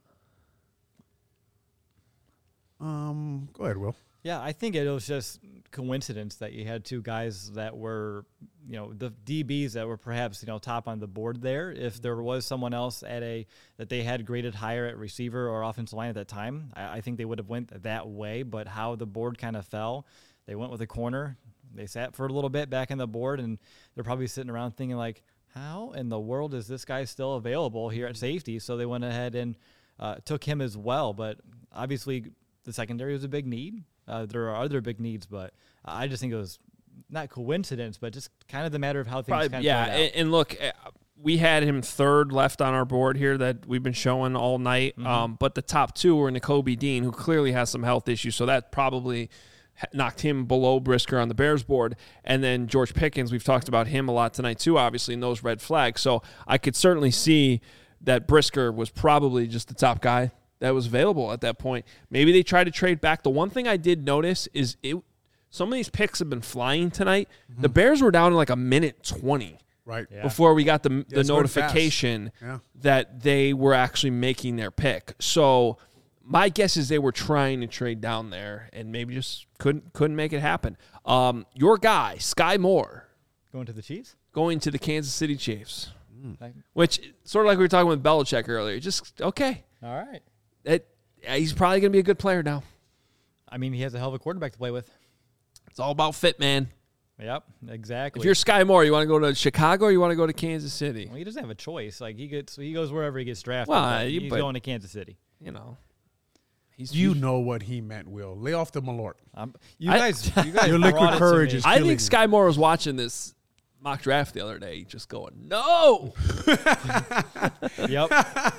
Um, go ahead, Will. Yeah, I think it was just coincidence that you had two guys that were, you know, the D Bs that were perhaps, you know, top on the board there. If there was someone else at a that they had graded higher at receiver or offensive line at that time, I, I think they would have went that way. But how the board kind of fell, they went with a corner. They sat for a little bit back in the board, and they're probably sitting around thinking like, how in the world is this guy still available here at safety? So they went ahead and uh, took him as well. But obviously the secondary was a big need. Uh, there are other big needs, but I just think it was not coincidence, but just kind of the matter of how things probably, kind of yeah. played out. And, and look, uh, we had him third left on our board here that we've been showing all night. Mm-hmm. Um, but the top two were Nakobe Dean, who clearly has some health issues, so that probably knocked him below Brisker on the Bears board. And then George Pickens, we've talked about him a lot tonight too, obviously, in those red flags. So I could certainly see that Brisker was probably just the top guy that was available at that point. Maybe they tried to trade back. The one thing I did notice is it. Some of these picks have been flying tonight. Mm-hmm. The Bears were down in like a minute twenty right yeah. before we got the, yeah, the notification yeah. that they were actually making their pick. So my guess is they were trying to trade down there and maybe just couldn't couldn't make it happen. Um, your guy, Sky Moore. Going to the Chiefs? Going to the Kansas City Chiefs. Mm. Which, sort of like we were talking with Belichick earlier, just, okay. All right. It, he's probably going to be a good player now. I mean, he has a hell of a quarterback to play with. It's all about fit, man. Yep, exactly. If you're Sky Moore, you want to go to Chicago or you want to go to Kansas City? Well, he doesn't have a choice. Like he gets, he goes wherever he gets drafted. Well, he's you, but, going to Kansas City. You know, he's you he's, know what he meant. Will lay off the Malort. Um, you guys, I, you guys, your liquid courage is. I think Sky Moore was watching this mock draft the other day, just going, "No." Yep.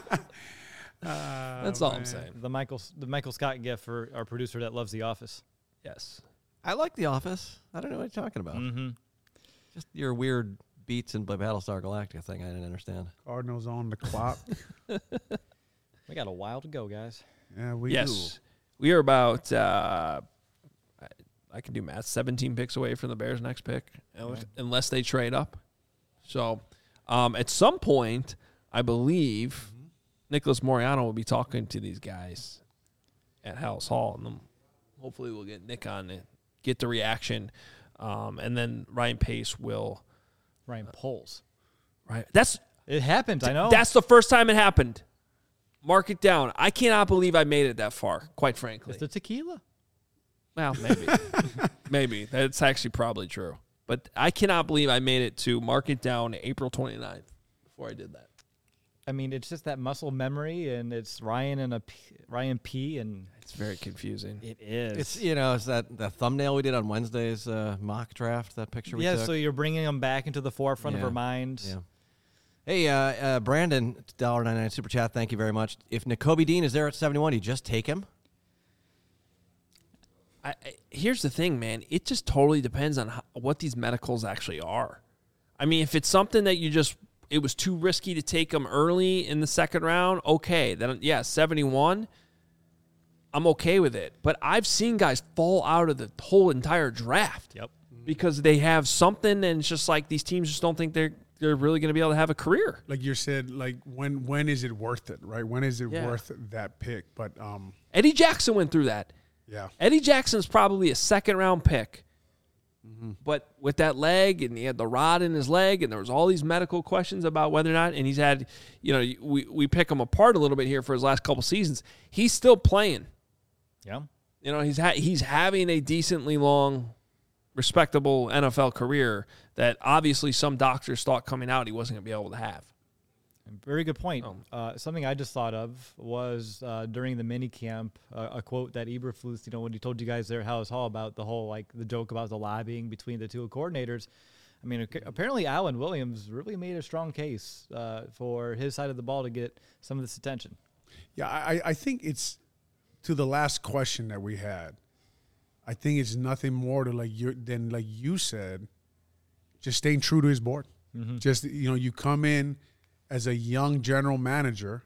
Uh, That's all man. I'm saying. The Michael, the Michael Scott gift for our producer that loves The Office. Yes. I like The Office. I don't know what you're talking about. Mm-hmm. Just your weird beats in Battlestar Galactica thing I didn't understand. Cardinals on the clock. We got a while to go, guys. Yeah, we yes. do. We are about, uh, I, I can do math, seventeen picks away from the Bears' next pick, okay. unless they trade up. So um, at some point, I believe mm-hmm. Nicholas Moreano will be talking to these guys at House Hall, and then hopefully we'll get Nick on it. Get the reaction, um, and then Ryan Pace will. Ryan uh, Poles. Right. That's it happened. I know. That's the first time it happened. Mark it down. I cannot believe I made it that far. Quite frankly, it's the tequila. Well, maybe, maybe that's actually probably true. But I cannot believe I made it to mark it down April twenty-ninth before I did that. I mean, it's just that muscle memory, and it's Ryan and a P, Ryan P, and it's very confusing. It is. It's you know, it's that the thumbnail we did on Wednesday's uh, mock draft. That picture we yeah, took. so you're bringing them back into the forefront yeah. of our minds. Yeah. Hey, uh, uh, Brandon, one dollar ninety-nine super chat. Thank you very much. If Nakobe Dean is there at seventy-one, do you just take him? I, I, here's the thing, man. It just totally depends on how, what these medicals actually are. I mean, if it's something that you just it was too risky to take him early in the second round, okay. Then, yeah, seventy-one, I'm okay with it. But I've seen guys fall out of the whole entire draft yep. because they have something, and it's just like these teams just don't think they're they're really going to be able to have a career. Like you said, like when when is it worth it, right? When is it yeah. worth that pick? But um, Eddie Jackson went through that. Yeah. Eddie Jackson's probably a second-round pick. Mm-hmm. But with that leg, and he had the rod in his leg, and there was all these medical questions about whether or not, and he's had, you know, we, we pick him apart a little bit here for his last couple seasons. He's still playing. Yeah. You know, he's ha- he's having a decently long, respectable N F L career that obviously some doctors thought coming out he wasn't going to be able to have. Very good point. Oh. Uh, something I just thought of was uh, during the mini camp, uh, a quote that Eberflus, you know, when he told you guys there at House Hall about the whole, like, the joke about the lobbying between the two coordinators. I mean, apparently Alan Williams really made a strong case uh, for his side of the ball to get some of this attention. Yeah, I, I think it's to the last question that we had. I think it's nothing more to like you than like you said, just staying true to his board. Mm-hmm. Just, you know, you come in as a young general manager,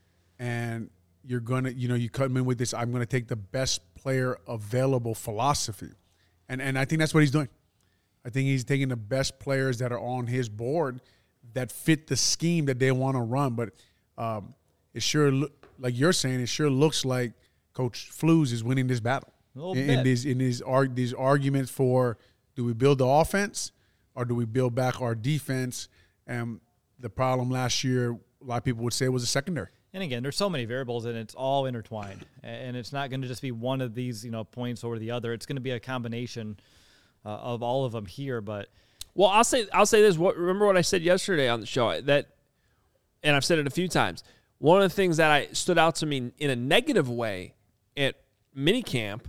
and you're going to, you know, you come in with this, I'm going to take the best player available philosophy. And and I think that's what he's doing. I think he's taking the best players that are on his board that fit the scheme that they want to run. But um, it sure, look, like you're saying, it sure looks like Coach Flus is winning this battle. A in, bit. in these, in these, arg- these arguments for, do we build the offense or do we build back our defense? And the problem last year, a lot of people would say, was the secondary. And again, there's so many variables, and it's all intertwined. And it's not going to just be one of these, you know, points or the other. It's going to be a combination uh, of all of them here. But well, I'll say I'll say this. What, remember what I said yesterday on the show that, and I've said it a few times. One of the things that I stood out to me in a negative way at minicamp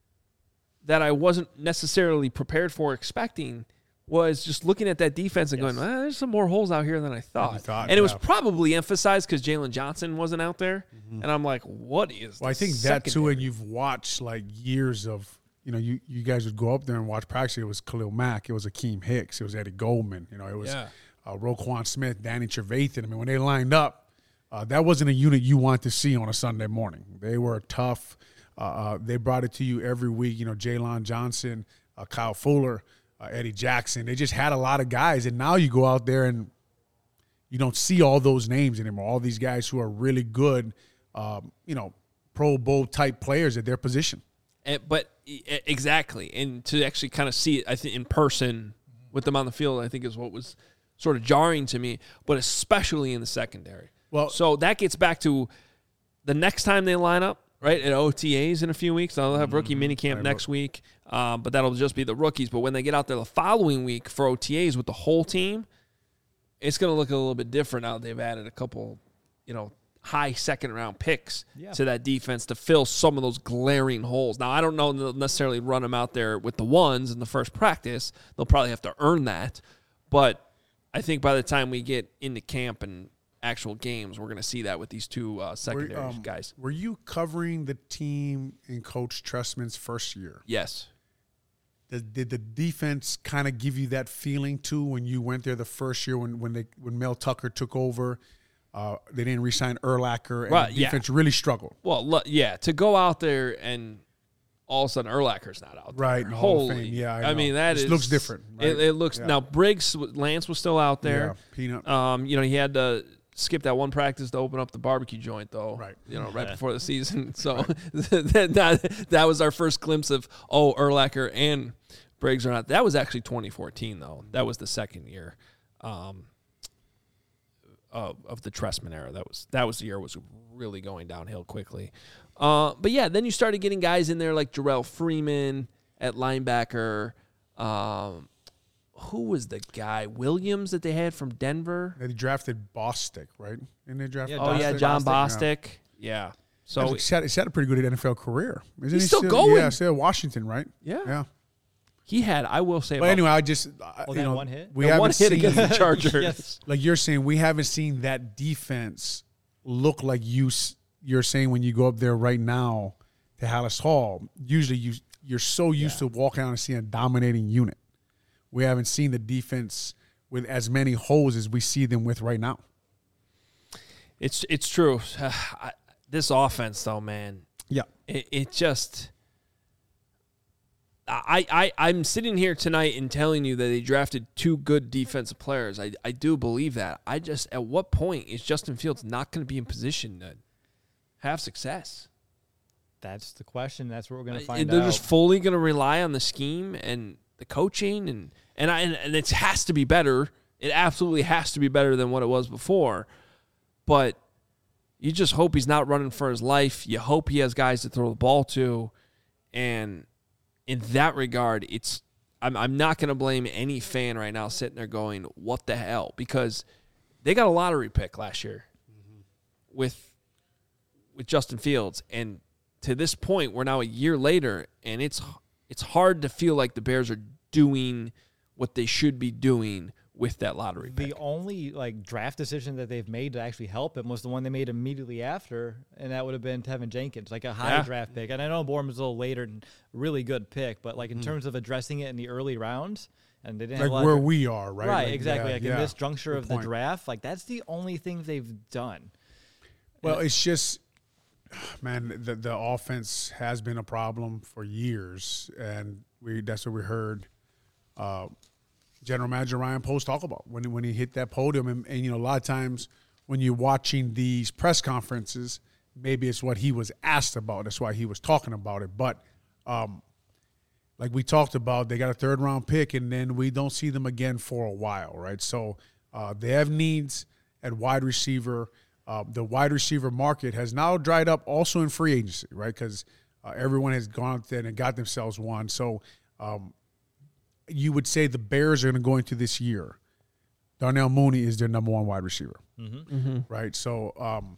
that I wasn't necessarily prepared for, expecting, was just looking at that defense and yes. going, ah, there's some more holes out here than I thought. thought and it yeah. was probably emphasized because Jalen Johnson wasn't out there. Mm-hmm. And I'm like, what is Well, I think secondary? that, too, and you've watched, like, years of you know, you, you guys would go up there and watch practice. It was Khalil Mack. It was Akeem Hicks. It was Eddie Goldman. You know, it was yeah. uh, Roquan Smith, Danny Trevathan. I mean, when they lined up, uh, that wasn't a unit you want to see on a Sunday morning. They were tough. Uh, uh, they brought it to you every week. You know, Jalen Johnson, uh, Kyle Fuller, uh, Eddie Jackson. They just had a lot of guys. And now you go out there and you don't see all those names anymore, all these guys who are really good, um, you know, Pro Bowl type players at their position. And, but exactly, and to actually kind of see it, I think in person with them on the field, I think is what was sort of jarring to me. But especially in the secondary. Well, so that gets back to the next time they line up, right, at O T As in a few weeks. They'll have rookie mm-hmm. minicamp next week, um, but that'll just be the rookies. But when they get out there the following week for O T As with the whole team, it's going to look a little bit different now. They've added a couple, you know, high second-round picks yeah. to that defense to fill some of those glaring holes. Now, I don't know they'll necessarily run them out there with the ones in the first practice. They'll probably have to earn that. But I think by the time we get into camp and actual games, we're going to see that with these two uh, secondary were, um, guys. Were you covering the team in Coach Trestman's first year? Yes. Did, did the defense kind of give you that feeling, too, when you went there the first year when, when, they, when Mel Tucker took over? Uh, they didn't re-sign Urlacher, and right, the defense yeah. really struggled. Well, look, yeah, to go out there and all of a sudden Urlacher's not out there. Right, in the Hall of Fame. Yeah, I, I mean, that it is, looks different. Right? It, it looks yeah. Now, Briggs, Lance was still out there. Yeah, Peanut. Um, you know, he had to skip that one practice to open up the barbecue joint, though. Right. You know, right yeah. before the season. So right. that, that, that was our first glimpse of, oh, Urlacher and Briggs are not. That was actually twenty fourteen, though. That was the second year. Um Of, of the Trestman era. That was that was the year it was really going downhill quickly. Uh, but, yeah, then you started getting guys in there like Jarrell Freeman at linebacker. Um, who was the guy? Williams that they had from Denver? They drafted Bostic, right? And they drafted yeah, Oh, yeah, John Bostic. Bostic. Yeah. yeah. So he's had, he's had a pretty good N F L career. Isn't he's he still, still going. Yeah, still at Washington, right? Yeah. Yeah. He had, I will say. But anyway, I just, well, you that know, one hit? we the haven't one hit seen, against the Chargers. yes. Like you're saying, we haven't seen that defense look like you, you're saying when you go up there right now to Hallis Hall. Usually you, you're so used yeah. to walking out and seeing a dominating unit. We haven't seen the defense with as many holes as we see them with right now. It's it's true. Uh, I, this offense, though, man. Yeah. It, it just – I, I, I'm sitting here tonight and telling you that they drafted two good defensive players. I, I do believe that. I just, at what point is Justin Fields not going to be in position to have success? That's the question. That's what we're going to find I, they're out. They're just fully going to rely on the scheme and the coaching, and and, I, and and it has to be better. It absolutely has to be better than what it was before. But you just hope he's not running for his life. You hope he has guys to throw the ball to, and in that regard, it's I'm I'm not going to blame any fan right now sitting there going, "What the hell?" Because they got a lottery pick last year mm-hmm. with with Justin Fields, and to this point, we're now a year later, and it's it's hard to feel like the Bears are doing what they should be doing with that lottery pick. The only like draft decision that they've made to actually help him was the one they made immediately after, and that would have been Tevin Jenkins, like a high yeah. draft pick. And I know Bourne was a little later and really good pick, but like in mm. terms of addressing it in the early rounds, and they didn't like have where of, we are, right? Right, like, exactly. Yeah, like yeah. in this juncture good of point. the draft, like that's the only thing they've done. Well, and, it's just, man, the the offense has been a problem for years, and we that's what we heard. Uh, General Manager Ryan Post talk about when when he hit that podium, and, and you know a lot of times when you're watching these press conferences, maybe it's what he was asked about. That's why he was talking about it. But um, like we talked about, they got a third round pick, and then we don't see them again for a while, right? So uh, they have needs at wide receiver. Uh, the wide receiver market has now dried up, also in free agency, right? Because uh, everyone has gone out there and got themselves one. So. Um, You would say the Bears are going to go into this year. Darnell Mooney is their number one wide receiver, mm-hmm. Mm-hmm. right? So um,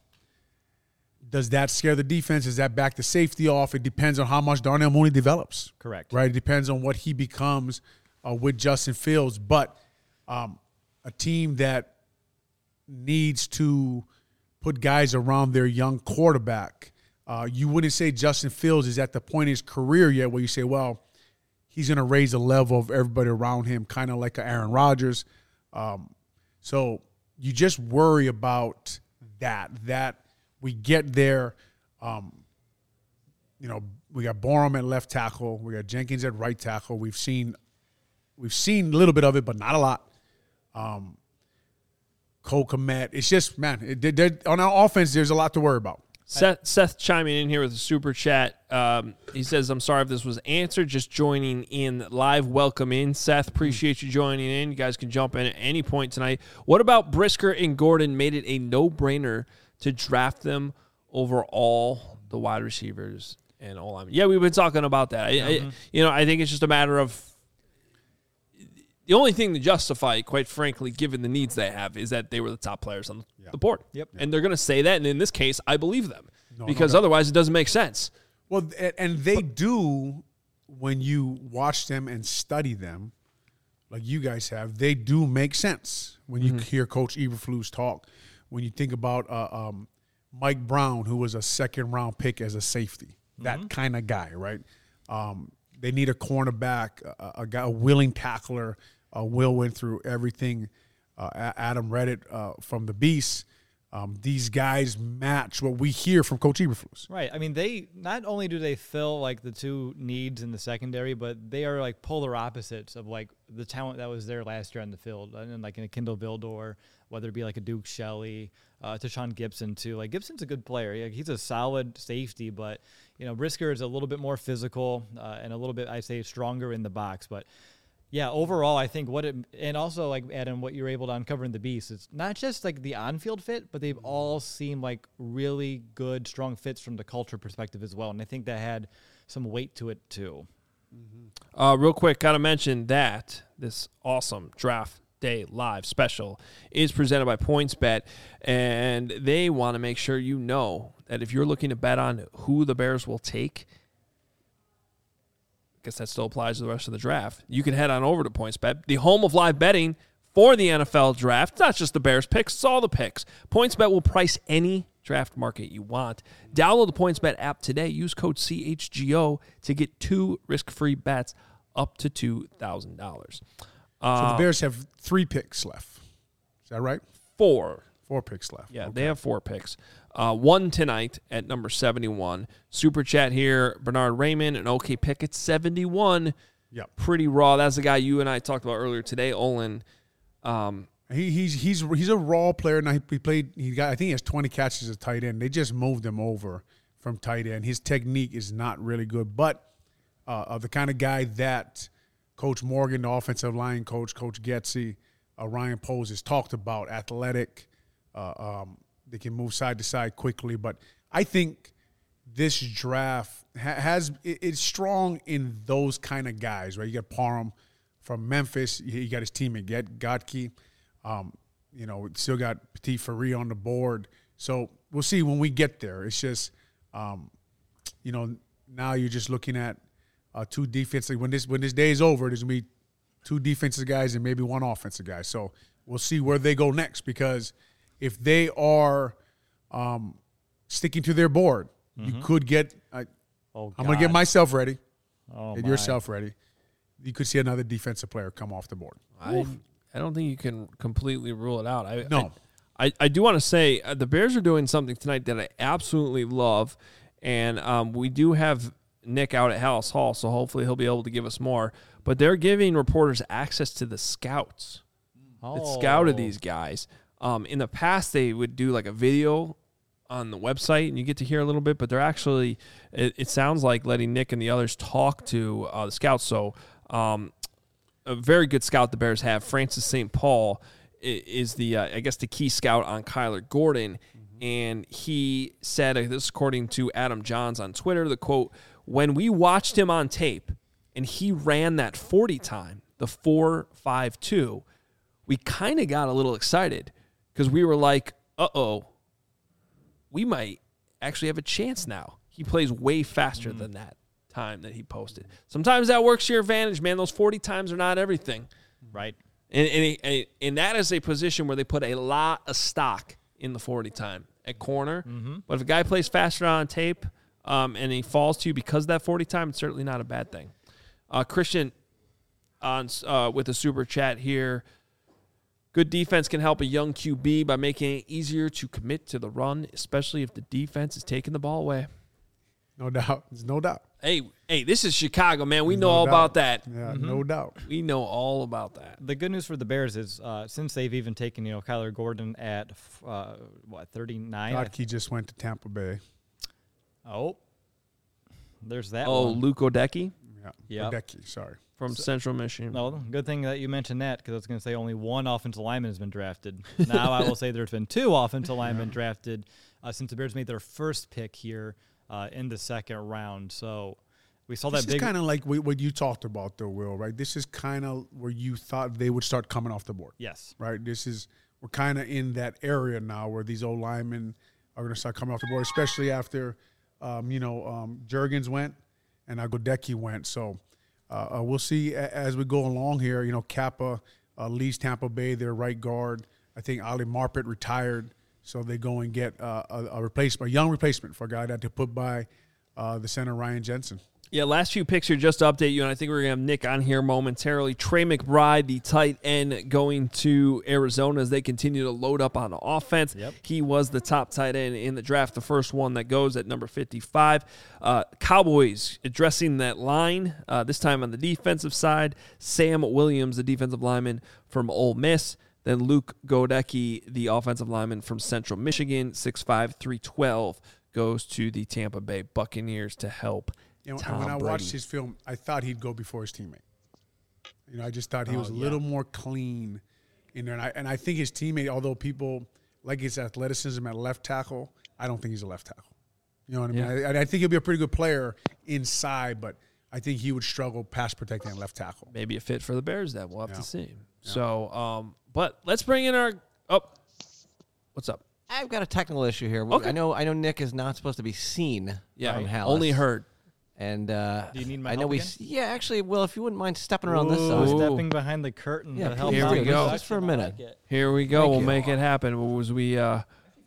does that scare the defense? Does that back the safety off? It depends on how much Darnell Mooney develops. Correct. Right? It depends on what he becomes uh, with Justin Fields. But um, a team that needs to put guys around their young quarterback Uh, you wouldn't say Justin Fields is at the point in his career yet where you say, well, he's going to raise the level of everybody around him, kind of like a Aaron Rodgers. Um, so you just worry about that, that we get there. Um, you know, we got Borum at left tackle. We got Jenkins at right tackle. We've seen we've seen a little bit of it, but not a lot. Um, Cole Kmet. It's just, man, it, on our offense, there's a lot to worry about. Seth, Seth chiming in here with a super chat. Um, he says, I'm sorry if this was answered. Just joining in live. Welcome in, Seth. Appreciate you joining in. You guys can jump in at any point tonight. What about Brisker and Gordon made it a no-brainer to draft them over all the wide receivers and all? I mean, yeah, we've been talking about that. I, mm-hmm. I, you know, I think it's just a matter of the only thing to justify it, quite frankly, given the needs they have, is that they were the top players on yeah. the board. Yep. And they're going to say that, and in this case, I believe them. No, because no otherwise it doesn't make sense. Well, and they do, when you watch them and study them, like you guys have, they do make sense when you mm-hmm. hear Coach Eberflus talk. When you think about uh, um, Mike Brown, who was a second-round pick as a safety, that mm-hmm. kind of guy, right? Um, they need a cornerback, a, a guy, a willing tackler. Uh, Will went through everything. Uh, Adam Reddit uh, from the Beast. Um, these guys match what we hear from Coach Eberflus. Right. I mean, they not only do they fill like the two needs in the secondary, but they are like polar opposites of like the talent that was there last year on the field, and like in a Kindle Vildor, whether it be like a Duke Shelley, uh, to Sean Gibson too. Like Gibson's a good player. He's a solid safety, but you know Brisker is a little bit more physical uh, and a little bit, I say, stronger in the box, but. Yeah, overall, I think what it – and also, like, Adam, what you're able to uncover in the Beast, it's not just, like, the on-field fit, but they've all seemed like really good, strong fits from the culture perspective as well, and I think that had some weight to it too. Mm-hmm. Uh, real quick, got to mention that this awesome Draft Day Live special is presented by PointsBet, and they want to make sure you know that if you're looking to bet on who the Bears will take – guess that still applies to the rest of the draft. You can head on over to PointsBet, the home of live betting for the N F L draft. It's not just the Bears picks, it's all the picks. PointsBet will price any draft market you want. Download the PointsBet app today. Use code C H G O to get two risk-free bets up to two thousand dollars. Uh, so the Bears have three picks left. Is that right? Four. Four picks left. Yeah, okay. They have four picks. Uh, one tonight at number seventy-one. Super chat here, Bernard Raymond, an okay pick at seventy-one. Yep. Pretty raw. That's the guy you and I talked about earlier today, Olin. Um, he, he's he's he's a raw player. Now he, he played. He got. I think he has twenty catches as tight end. They just moved him over from tight end. His technique is not really good, but uh, uh, the kind of guy that Coach Morgan, the offensive line coach, Coach Getsy, uh, Ryan Poles has talked about. Athletic. Uh, um, they can move side to side quickly, but I think this draft ha- has it, it's strong in those kind of guys, right? You got Parham from Memphis. You got his teammate Gotke. Um, you know, still got Petit Ferry on the board. So we'll see when we get there. It's just, um, you know, now you're just looking at uh, two defensive. When this when this day is over, there's gonna be two defensive guys and maybe one offensive guy. So we'll see where they go next, because if they are um, sticking to their board, mm-hmm. you could get uh, – oh, I'm going to get myself ready oh, get my. yourself ready. You could see another defensive player come off the board. I, I don't think you can completely rule it out. I, no. I, I, I do want to say uh, the Bears are doing something tonight that I absolutely love, and um, we do have Nick out at Hallis Hall, so hopefully he'll be able to give us more. But they're giving reporters access to the scouts oh. that scouted these guys. Um, in the past, they would do like a video on the website, and you get to hear a little bit, but they're actually, it, it sounds like letting Nick and the others talk to uh, the scouts. So um, a very good scout the Bears have. Francis Saint Paul is the, uh, I guess, the key scout on Kyler Gordon, mm-hmm. and he said, uh, this is according to Adam Johns on Twitter, the quote, when we watched him on tape and he ran that forty time, the four five two, we kind of got a little excited. Because we were like, uh-oh, we might actually have a chance now. He plays way faster mm. than that time that he posted. Sometimes that works to your advantage, man. Those forty times are not everything. Right. And, and, and that is a position where they put a lot of stock in the forty time. at corner. Mm-hmm. But if a guy plays faster on tape um, and he falls to you because of that forty time, it's certainly not a bad thing. Uh, Christian on uh, with a super chat here. Good defense can help a young Q B by making it easier to commit to the run, especially if the defense is taking the ball away. No doubt. There's no doubt. Hey, hey, this is Chicago, man. We know No all doubt. about that. Yeah, Mm-hmm. no doubt. We know all about that. The good news for the Bears is uh, since they've even taken, you know, Kyler Gordon at, uh, what, thirty-nine? God, he just went to Tampa Bay. Oh, there's that Oh, one. Luke Odeki Yeah. Yep. Odeki, sorry. from Central Michigan. No, good thing that you mentioned that because I was going to say only one offensive lineman has been drafted. Now I will say there's been two offensive linemen drafted uh, since the Bears made their first pick here uh, in the second round. So we saw This that is big. kind of like what you talked about, though, Will, right? This is kind of where you thought they would start coming off the board, Yes. right? This is – we're kind of in that area now where these old linemen are going to start coming off the board, especially after, um, you know, um, Juergens went and now Godecki went. So uh, uh, we'll see a- as we go along here. You know, Kappa uh, leaves Tampa Bay, their right guard. I think Ali Marpet retired, so they go and get uh, a, a replacement, a young replacement for a guy that to put by uh, the center, Ryan Jensen. Yeah, last few picks here just to update you, and I think we're going to have Nick on here momentarily. Trey McBride, the tight end, going to Arizona as they continue to load up on offense. Yep. He was the top tight end in the draft, the first one that goes at number fifty-five. Uh, Cowboys addressing that line, uh, this time on the defensive side. Sam Williams, the defensive lineman from Ole Miss. Then Luke Godecki, the offensive lineman from Central Michigan, six five, three twelve, goes to the Tampa Bay Buccaneers to help You know, Tom and when I Brady. watched his film, I thought he'd go before his teammate. You know, I just thought he Oh, was a yeah. little more clean in there. And I, and I think his teammate, although people like his athleticism at left tackle, I don't think he's a left tackle. You know what I mean? Yeah. I, I think he'll be a pretty good player inside, but I think he would struggle pass protecting at left tackle. Maybe a fit for the Bears then. We'll have Yeah. to see. So, um, but let's bring in our – oh, what's up? I've got a technical issue here. Okay. I know I know Nick is not supposed to be seen Yeah, from Hallis. only heard. And uh, Do you need my I know help we again? s- yeah, actually, Will, if you wouldn't mind stepping around this Ooh, side. stepping behind the curtain Yeah, to help here out we with go. the Just for a production. I minute. like it. Here we go. Thank we'll you. make it happen. What was we uh,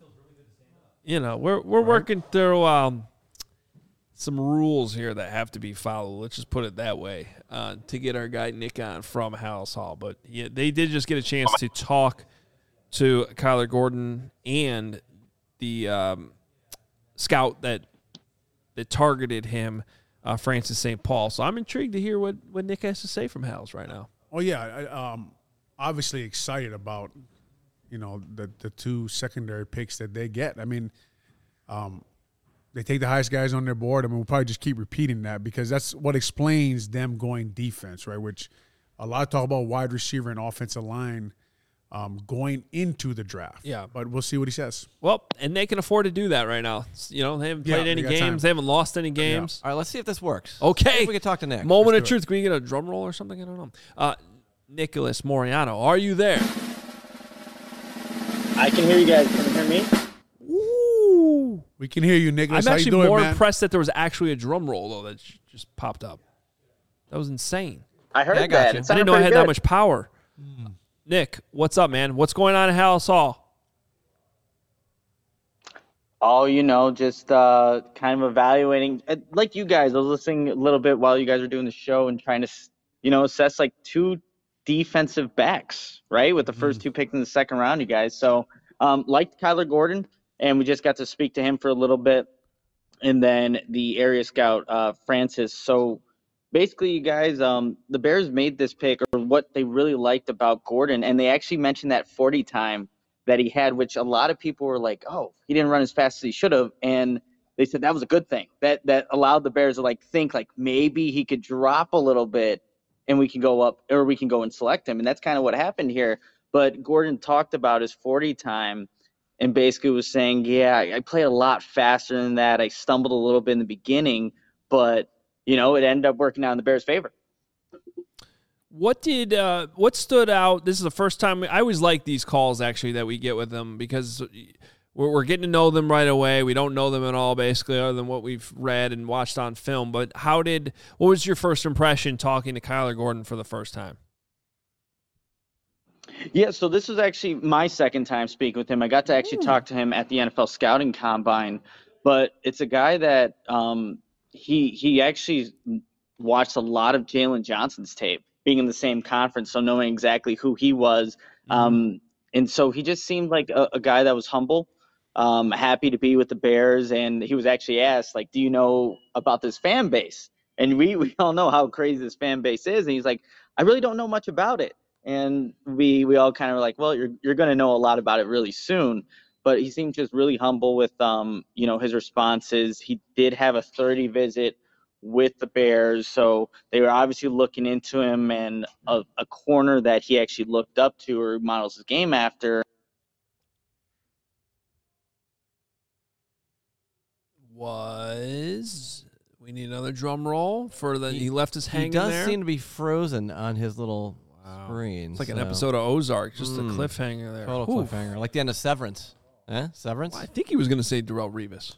you know, we're we're working through um, some rules here that have to be followed. Let's just put it that way uh, to get our guy Nick on from House Hall. But yeah, they did just get a chance to talk to Kyler Gordon and the um, scout that that targeted him, uh, Francis Saint Paul. So I'm intrigued to hear what, what Nick has to say from House right now. Oh, yeah. I, um, obviously excited about, you know, the, the two secondary picks that they get. I mean, um, they take the highest guys on their board. I mean, we'll probably just keep repeating that because that's what explains them going defense, right, which a lot of talk about wide receiver and offensive line um, going into the draft. Yeah. But we'll see what he says. Well, and they can afford to do that right now. You know, they haven't Yeah, played they any got games. time. They haven't lost any games. All right, let's see if this works. Okay. If we can talk to Nick. Moment of do it. truth. Can we get a drum roll or something? I don't know. Uh, Nicholas Moriano, are you there? I can hear you guys. Can you hear me? Ooh. We can hear you, Nicholas. I'm How you actually doing, more man? impressed that there was actually a drum roll, though, that j- just popped up. That was insane. I heard Yeah, I got that. you. It I sounded didn't know I pretty had good. that much power. Nick, what's up, man? What's going on at House Hall? Oh, you know, just uh, kind of evaluating. uh, Like you guys, I was listening a little bit while you guys were doing the show and trying to, s- you know, assess like two defensive backs, right? With the first two picked in the second round, you guys. So, um, liked Kyler Gordon, and we just got to speak to him for a little bit. And then the area scout, uh, Francis. So basically, you guys, um, the Bears made this pick, or what they really liked about Gordon, and they actually mentioned that forty time that he had, which a lot of people were like, oh, he didn't run as fast as he should have. And they said that was a good thing. That that allowed the Bears to like think like maybe he could drop a little bit and we can go up, or we can go and select him. And that's kind of what happened here. But Gordon talked about his forty time and basically was saying, yeah, I I played a lot faster than that. I stumbled a little bit in the beginning, but, you know, it ended up working out in the Bears' favor. What did uh, what stood out? This is the first time I always like these calls actually that we get with them because we're, we're getting to know them right away. We don't know them at all basically, other than what we've read and watched on film. But how did what was your first impression talking to Kyler Gordon for the first time? Yeah, so this was actually my second time speaking with him. I got to actually Ooh. talk to him at the N F L scouting combine, but it's a guy that um, he he actually watched a lot of Jalen Johnson's tape, being in the same conference, so knowing exactly who he was. Mm-hmm. Um, and so he just seemed like a, a guy that was humble, um, happy to be with the Bears. And he was actually asked, like, "Do you know about this fan base?" And we we all know how crazy this fan base is. And he's like, "I really don't know much about it." And we we all kind of were like, well, you're you're going to know a lot about it really soon. But he seemed just really humble with um you know his responses. He did have a thirty visit with the Bears, so they were obviously looking into him, and a, a corner that he actually looked up to or models his game after. Was we need another drum roll for the he, He- left us He hanging does there. seem to be frozen on his little Wow. screen. It's like an so- episode of Ozark, just Mm. a cliffhanger there. Total Oof. cliffhanger, like the end of Severance. Eh? Severance? Well, I think he was going to say Darrell Revis.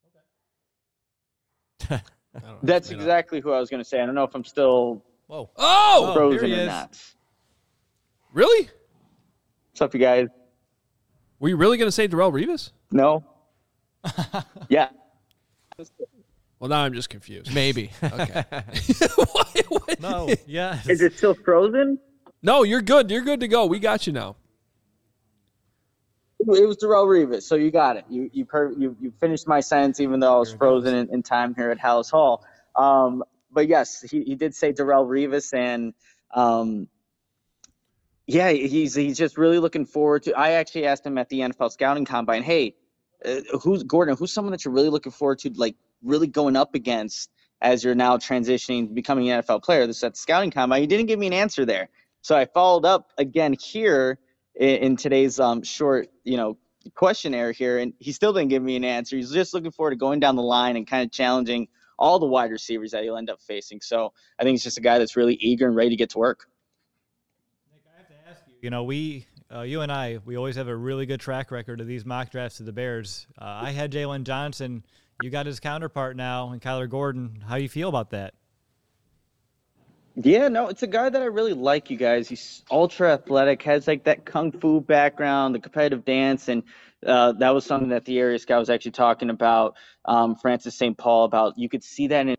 I don't know. That's May not. exactly who I was going to say. I don't know if I'm still Whoa. Oh, frozen here he or is. not. really? What's up, you guys? Were you really going to say Darrell Revis? No. Yeah. Well, now I'm just confused. Maybe. Okay. What- what- No. Yeah. Is it still frozen? No, you're good. You're good to go. We got you now. It was Darrell Revis, so you got it. You you per, you, you finished my sentence, even though I was Here it frozen goes. in, in time here at Hallis Hall. Um, but yes, he, he did say Darrell Revis, and um, yeah, he's he's just really looking forward to. I actually asked him at the N F L scouting combine, hey, uh, who's Gordon? Who's someone that you're really looking forward to, like really going up against as you're now transitioning, becoming an N F L player? This is at the scouting combine. He didn't give me an answer there, so I followed up again here in, in today's um, short, you know, questionnaire here, and he still didn't give me an answer. He's just looking forward to going down the line and kind of challenging all the wide receivers that he'll end up facing. So I think it's just a guy that's really eager and ready to get to work. Nick, I have to ask you. You know, we, uh, you and I, we always have a really good track record of these mock drafts to the Bears. Uh, I had Jalen Johnson. You got his counterpart now, and Kyler Gordon. How do you feel about that? Yeah, no, it's a guy that I really like, you guys. He's ultra athletic, has like that kung fu background, the competitive dance, and uh, that was something that the area scout was actually talking about, um, Francis Saint Paul, about. You could see that in.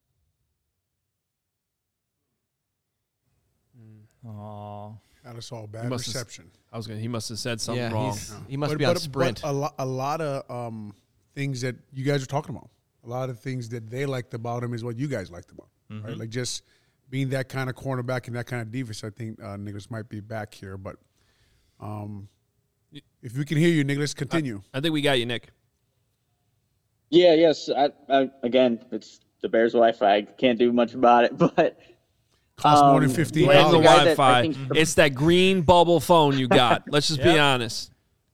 Oh, That is all He bad must have- reception. I was going to, he must have said something Yeah, wrong. he's, he must But- be on but- sprint. But a, lo- a lot of um, things that you guys are talking about, a lot of things that they liked about him is what you guys liked about, right? Like just being that kind of cornerback and that kind of defense. I think uh, Nicholas might be back here, but um, if we can hear you, Nicholas, continue. I think we got you, Nick. Yeah, yes. I, I, again, it's the Bears Wi-Fi. I can't do much about it, but Costs more than um, fifteen yeah, Blame the the guy that Wi-Fi. I think- It's that green bubble phone you got. Let's just be Yep. honest.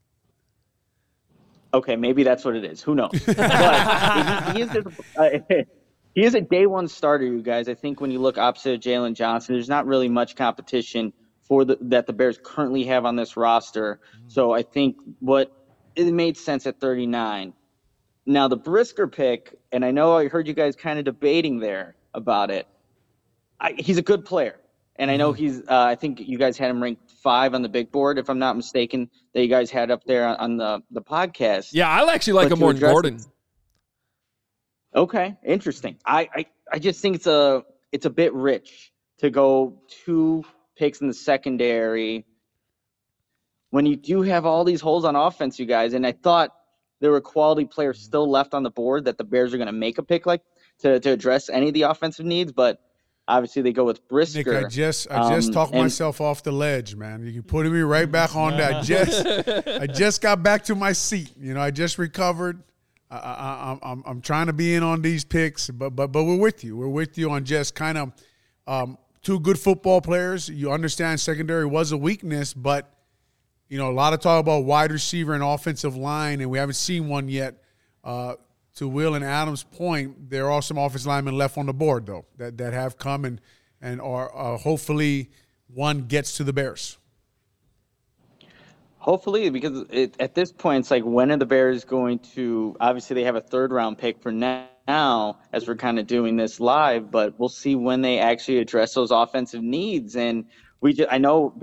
Okay, maybe that's what it is. Who knows? But he, he, is a, uh, he is a day one starter, you guys. I think when you look opposite of Jalen Johnson, there's not really much competition for the that the Bears currently have on this roster. So I think what it made sense at thirty-nine. Now the Brisker pick, and I know I heard you guys kind of debating there about it. I, he's a good player. And I know he's, uh, I think you guys had him ranked five on the big board, if I'm not mistaken, that you guys had up there on, on the, the podcast. Yeah, I actually like But him to more than address Gordon. it- Okay, interesting. I, I, I just think it's a it's a bit rich to go two picks in the secondary when you do have all these holes on offense, you guys. And I thought there were quality players still left on the board that the Bears are going to make a pick like to, to address any of the offensive needs, but obviously they go with Brisker. Nick, I just I just Um, talked and- myself off the ledge, man. You putting me right back on that. I just I just got back to my seat. You know, I just recovered. I, I, I'm I'm I'm trying to be in on these picks, but but but we're with you. We're with you on just kind of um, two good football players. You understand secondary was a weakness, but you know a lot of talk about wide receiver and offensive line, and we haven't seen one yet. Uh, to Will and Adam's point, there are some offensive linemen left on the board though that that have come and and are uh, hopefully one gets to the Bears. Hopefully, because it, at this point, it's like, when are the Bears going to – obviously, they have a third-round pick for now as we're kind of doing this live, but we'll see when they actually address those offensive needs. And we just, I know Bears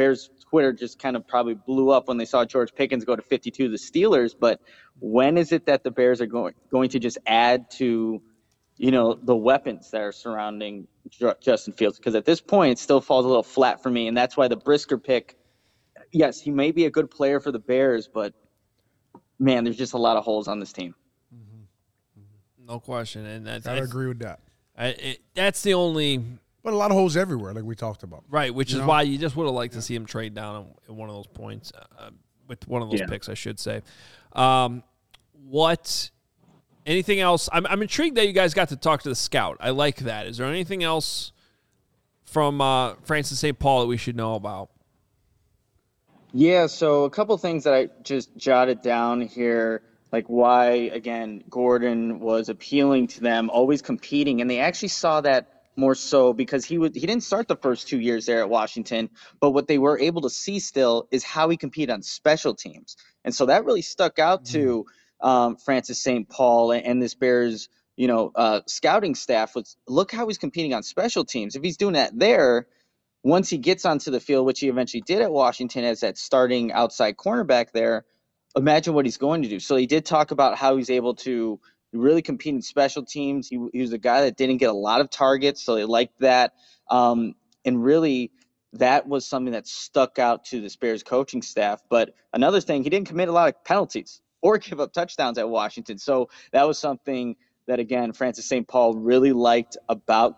Twitter just kind of probably blew up when they saw George Pickens go to fifty-two to the Steelers. But when is it that the Bears are going going to just add to, you know, the weapons that are surrounding Justin Fields? Because at this point, it still falls a little flat for me, and that's why the Brisker pick, yes, he may be a good player for the Bears, but, man, there's just a lot of holes on this team. Mm-hmm. No question. And that's, I agree with that. I, it, that's the only – But a lot of holes everywhere, like we talked about. Right, which you is know? why you just would have liked to see him trade down at one of those points, uh, with one of those yeah. picks, I should say. Um, what – anything else? I'm, I'm intrigued that you guys got to talk to the scout. I like that. Is there anything else from uh, Francis Saint Paul that we should know about? Yeah, so a couple things that I just jotted down here, like why, again, Gordon was appealing to them, always competing, and they actually saw that more so because he would he didn't start the first two years there at Washington, but what they were able to see still is how he competed on special teams. And so that really stuck out to um, Francis Saint Paul and, and this Bears, you know, uh, scouting staff was, look how he's competing on special teams. If he's doing that there, once he gets onto the field, which he eventually did at Washington as that starting outside cornerback there, imagine what he's going to do. So he did talk about how he's able to really compete in special teams. He, he was a guy that didn't get a lot of targets, so they liked that. Um, and really, that was something that stuck out to the Bears coaching staff. But another thing, he didn't commit a lot of penalties or give up touchdowns at Washington. So that was something that, again, Francis Saint Paul really liked about.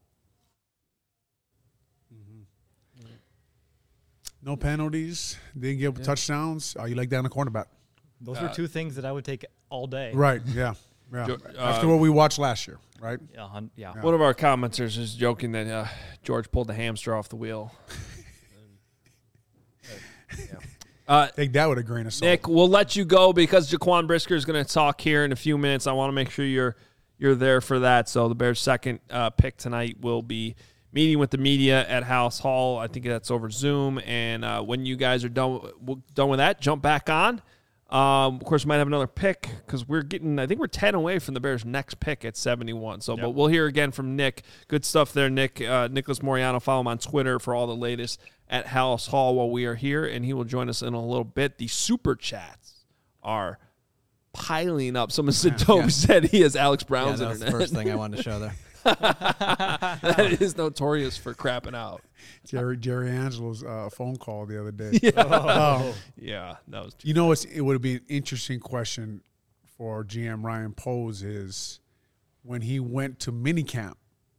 No penalties, didn't give up yeah. touchdowns. Oh, you like that on the cornerback? Those Uh, were two things that I would take all day. Right, yeah. yeah. Uh, After what we watched last year, right? Yeah, hun- yeah. One of our commenters is joking that uh, George pulled the hamster off the wheel. yeah. uh, Take that with a grain of salt. Nick, we'll let you go because Jaquan Brisker is going to talk here in a few minutes. I want to make sure you're you're there for that. So the Bears' second uh, pick tonight will be meeting with the media at House Hall. I think that's over Zoom. And uh, when you guys are done, done with that, jump back on. Um, of course, we might have another pick because we're getting, I think we're ten away from the Bears' next pick at seventy-one. So, yep. But we'll hear again from Nick. Good stuff there, Nick. Uh, Nicholas Moriano. Follow him on Twitter for all the latest at House Hall while we are here. And he will join us in a little bit. The super chats are piling up. Someone said, Toby yeah. said he has Alex Brown's yeah, that was internet. the first thing I wanted to show there. That is notorious for crapping out. Jerry Jerry Angelo's uh, phone call the other day. Yeah, oh. yeah that was. You know, it's, it would be an interesting question for G M Ryan Poles is when he went to minicamp,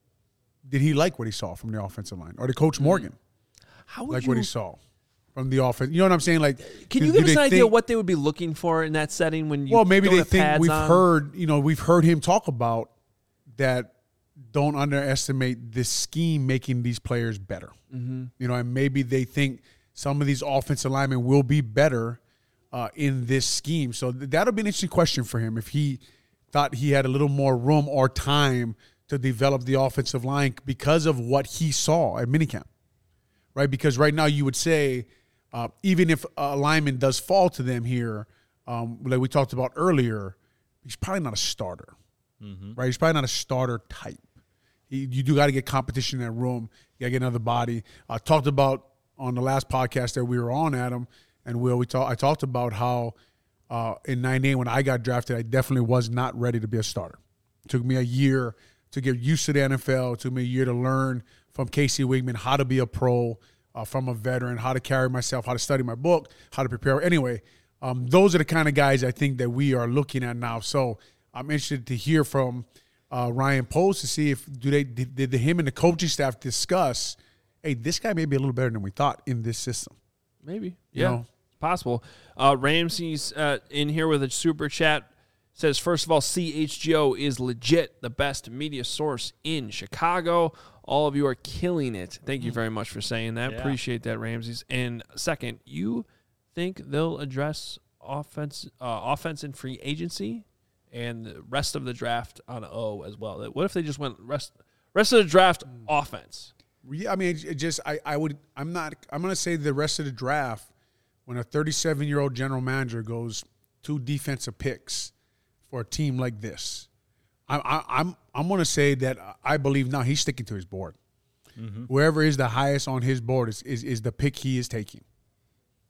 did he like what he saw from the offensive line, or did Coach Morgan How would like you, what he saw from the offense? You know what I'm saying? Like, can do, you give do us an think, idea what they would be looking for in that setting when you? Well, maybe don't they have think pads we've on? heard. You know, we've heard him talk about that. Don't underestimate this scheme making these players better. Mm-hmm. You know, and maybe they think some of these offensive linemen will be better uh, in this scheme. So th- that'll be an interesting question for him if he thought he had a little more room or time to develop the offensive line because of what he saw at minicamp, right? Because right now you would say uh, even if a lineman does fall to them here, um, like we talked about earlier, he's probably not a starter, mm-hmm. right? He's probably not a starter type. He, you do got to get competition in that room. You got to get another body. I talked about on the last podcast that we were on, Adam, and Will, we talk, I talked about how uh, in ninety-eight when I got drafted, I definitely was not ready to be a starter. It took me a year to get used to the N F L. It took me a year to learn from Casey Wigman how to be a pro, uh, from a veteran, how to carry myself, how to study my book, how to prepare. Anyway, um, those are the kind of guys I think that we are looking at now. So I'm interested to hear from uh, Ryan Poles to see if do they did, did him and the coaching staff discuss, hey, this guy may be a little better than we thought in this system. Maybe, You yeah, know? it's possible. Uh, Ramsey's uh, in here with a super chat. Says, first of all, C H G O is legit the best media source in Chicago. All of you are killing it. Thank you very much for saying that. Yeah. Appreciate that, Ramses. And second, you think they'll address offense, uh, offense and free agency and the rest of the draft on O as well? What if they just went rest rest of the draft offense? Yeah, I mean, it just I, I would I'm not I'm gonna say the rest of the draft when a thirty-seven year old general manager goes two defensive picks for a team like this, I, I, I'm I'm gonna say that I believe now he's sticking to his board. Mm-hmm. Whoever is the highest on his board is, is is the pick he is taking.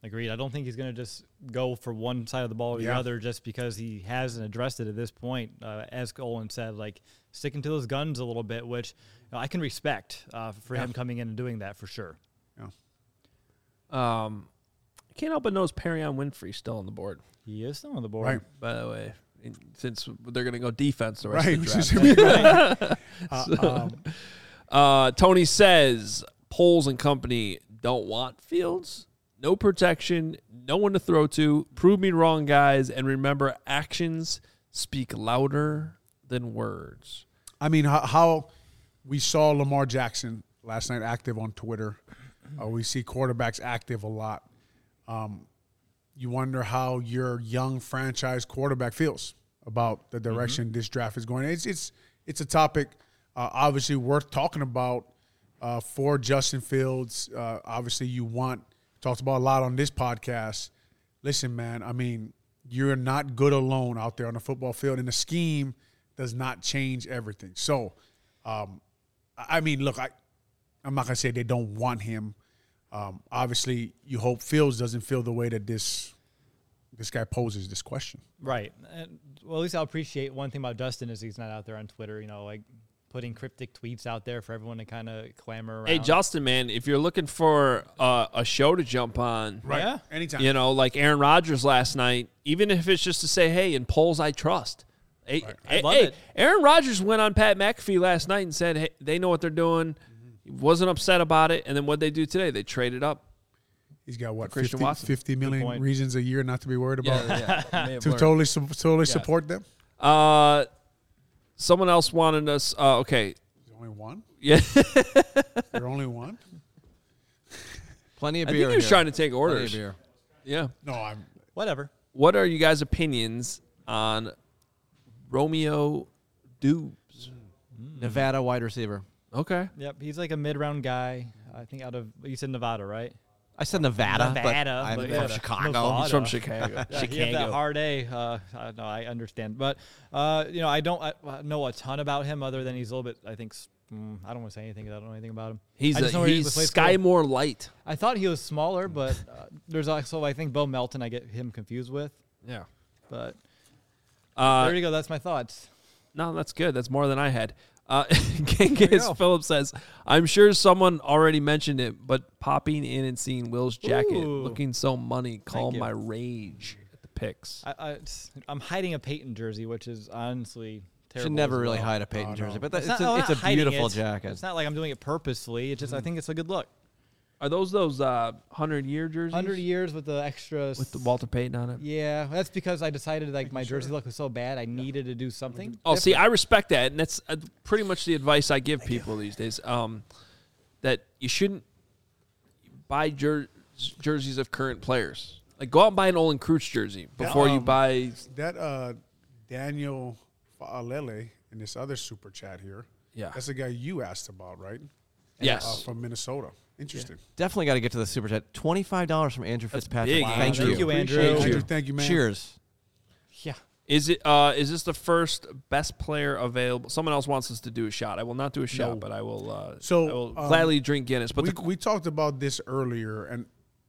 Agreed. I don't think he's going to just go for one side of the ball or Yeah. the other just because he hasn't addressed it at this point. Uh, as Olin said, like sticking to those guns a little bit, which you know, I can respect uh, for Yeah. him coming in and doing that for sure. Yeah. Um, I can't help but notice Perrion Winfrey's still on the board, He is still on the board. Right. by the way, in- since they're going to go defense the rest Right. of which the is draft. gonna be great. Uh, um, Uh, Tony says Poles and company don't want Fields. No protection, no one to throw to. Prove me wrong, guys, and remember, actions speak louder than words. I mean, how, how we saw Lamar Jackson last night active on Twitter. Uh, we see quarterbacks active a lot. Um, you wonder how your young franchise quarterback feels about the direction mm-hmm. this draft is going. It's it's it's a topic uh, obviously worth talking about uh, for Justin Fields. Uh, obviously, you want talked about a lot on this podcast. Listen, man, I mean, you're not good alone out there on the football field, and the scheme does not change everything. So, um, I mean, look, I, I'm not going to say they don't want him. Um, obviously, you hope Fields doesn't feel the way that this this guy poses this question. Right. And, well, at least I'll appreciate one thing about Dustin is he's not out there on Twitter, you know, like putting cryptic tweets out there for everyone to kind of clamor around. Hey, Justin, man, if you're looking for uh, a show to jump on, Right. Yeah. Anytime. you know, like Aaron Rodgers last night, even if it's just to say, hey, in polls I trust. Hey, I hey, love hey, it. Aaron Rodgers went on Pat McAfee last night and said, hey, they know what they're doing. He wasn't upset about it. And then what they do today, they traded up. He's got, what, Christian fifty, Watson. fifty million point. reasons a year not to be worried about Yeah, yeah. May have to learned. totally, su- totally support them? Uh, someone else wanted us. Uh, okay. There's only one? Yeah. There's only one? Plenty of I beer. think he was here. trying to take Plenty orders. of beer. Yeah. No, I'm Whatever. What are you guys' opinions on Romeo Dubes? Nevada wide receiver. Okay. Yep. He's like a mid-round guy. I think out of, you said Nevada, right? I said Nevada, Nevada, but I'm but from yeah, Chicago. Nevada. He's from Chicago. Yeah, he had that hard A. Uh, I, no, I understand. But, uh, you know, I don't I, I know a ton about him other than he's a little bit, I think, s- mm, I don't want to say anything because I don't know anything about him. He's I just know a, he he's was played Sky school. Moore light. I thought he was smaller, but uh, there's also, I think, Bo Melton I get him confused with. Yeah. But Uh, there you go. That's my thoughts. no, that's good. That's more than I had. Uh, you Genghis go. Phillips says, I'm sure someone already mentioned it, but popping in and seeing Will's jacket Ooh. looking so money calmed you. my rage at the picks. I, I, I'm hiding a Peyton jersey, which is honestly terrible. Should never as really well. hide a Peyton Oh, no. jersey, but that, It's it's, not- a, I'm it's not a hiding beautiful it. jacket. It's not like I'm doing it purposely. It's just I think it's a good look. Are those those uh, hundred-year jerseys? Hundred years with the extra. With the Walter Payton on it? Yeah, that's because I decided like my jersey look was so bad. I needed to do something. Oh, see, different. I respect that, and that's uh, pretty much the advice I give people these days. Um, that you shouldn't buy jer- jerseys of current players. Like, go out and buy an Olin Kreutz jersey before you um, buy. that uh, Daniel Faalele in this other super chat here. Yeah. That's the guy you asked about, right? Yes. Uh, from Minnesota. Interesting. Definitely got to get to the super chat. Twenty-five dollars from Andrew That's Fitzpatrick. big, Wow. Andrew. Thank you. Thank you, Andrew. Appreciate Andrew, you. thank you, man. Cheers. Yeah. Is it? Uh, is this the first best player available? Someone else wants us to do a shot. I will not do a shot, No. but I will. Uh, So, I will um, gladly drink Guinness. But we, the, we talked about this earlier, and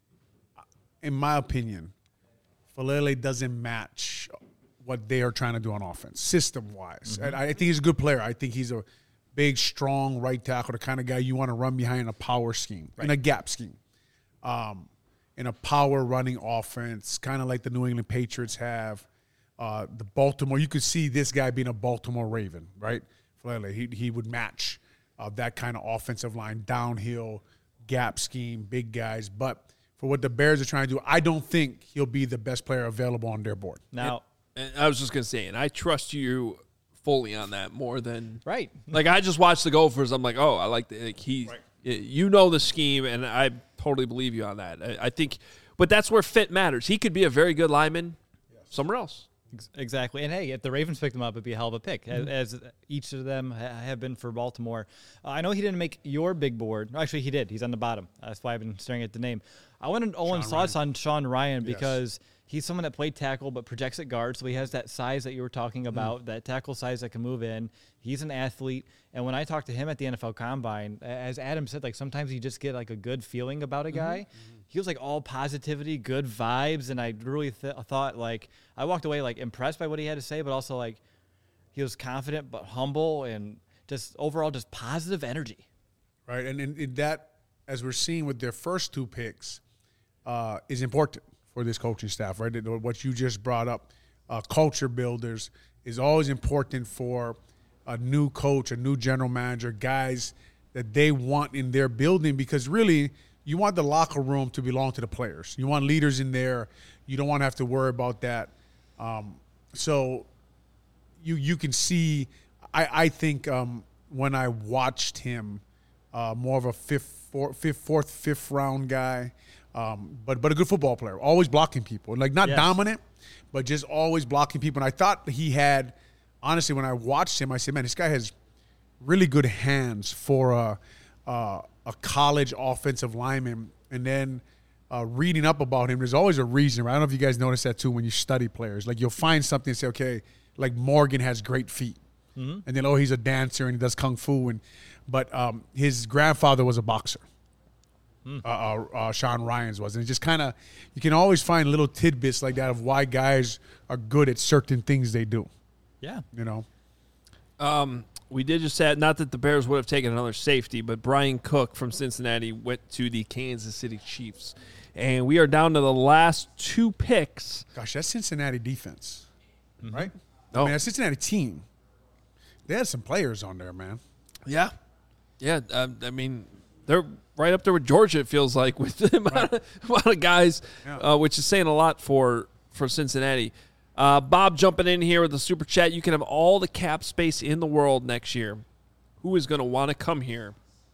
in my opinion, Falele doesn't match what they are trying to do on offense, system-wise. Mm-hmm. And I think he's a good player. I think he's a big, strong right tackle, the kind of guy you want to run behind in a power scheme, in a gap scheme, um, in a power running offense, kind of like the New England Patriots have. Uh, the Baltimore, you could see this guy being a Baltimore Raven, right? Falele, he he would match uh, that kind of offensive line, downhill, gap scheme, big guys. But for what the Bears are trying to do, I don't think he'll be the best player available on their board. Now, and I was just gonna say, and I trust you fully on that more than right. like I just watched the Gophers. I'm like, oh, I like the like he, you know the scheme, and I totally believe you on that. I, I think, but that's where fit matters. He could be a very good lineman somewhere else. Ex- Exactly. And hey, if the Ravens picked him up, it'd be a hell of a pick, Mm-hmm. as, as each of them ha- have been for Baltimore. Uh, I know he didn't make your big board. Actually, he did. He's on the bottom. That's why I've been staring at the name. I wanted Owen's thoughts on Sean Ryan because he's someone that played tackle but projects at guard, so he has that size that you were talking about, that tackle size that can move in. He's an athlete. And when I talked to him at the N F L Combine, a- as Adam said, like sometimes you just get like a good feeling about a guy. he was like all positivity, good vibes, and I really th- thought like I walked away like impressed by what he had to say, but also like he was confident but humble and just overall just positive energy. Right, and in, in that, as we're seeing with their first two picks, uh, is important for this coaching staff, right? What you just brought up, uh, culture builders, is always important for a new coach, a new general manager, guys that they want in their building, because really you want the locker room to belong to the players. You want leaders in there. You don't want to have to worry about that. Um, so you you can see, I, I think um, when I watched him, uh, more of a fifth, four, fifth, fourth, fifth round guy, um, but but a good football player, always blocking people. Like not yes. dominant, but just always blocking people. And I thought he had, honestly, when I watched him, I said, man, this guy has really good hands for a, a, a college offensive lineman. And then uh, reading up about him, there's always a reason, right? I don't know if you guys notice that too when you study players. Like you'll find something and say, okay, like Morgan has great feet. Mm-hmm. And then, oh, he's a dancer and he does kung fu. And But um, his grandfather was a boxer. Mm. Uh, uh, uh, Sean Ryan's was. And it just kind of, you can always find little tidbits like that of why guys are good at certain things they do. Yeah. You know? Um, we did just add, not that the Bears would have taken another safety, but Brian Cook from Cincinnati went to the Kansas City Chiefs. And we are down to the last two picks. Gosh, that's Cincinnati defense, mm-hmm. right? Oh. I mean, that Cincinnati team, they had some players on there, man. Yeah. Yeah, uh, I mean, they're right up there with Georgia, it feels like, with the amount, right. of, amount of guys, yeah. uh, which is saying a lot for, for Cincinnati. Uh, Bob jumping in here with the super chat. You can have all the cap space in the world next year. Who is going to want to come here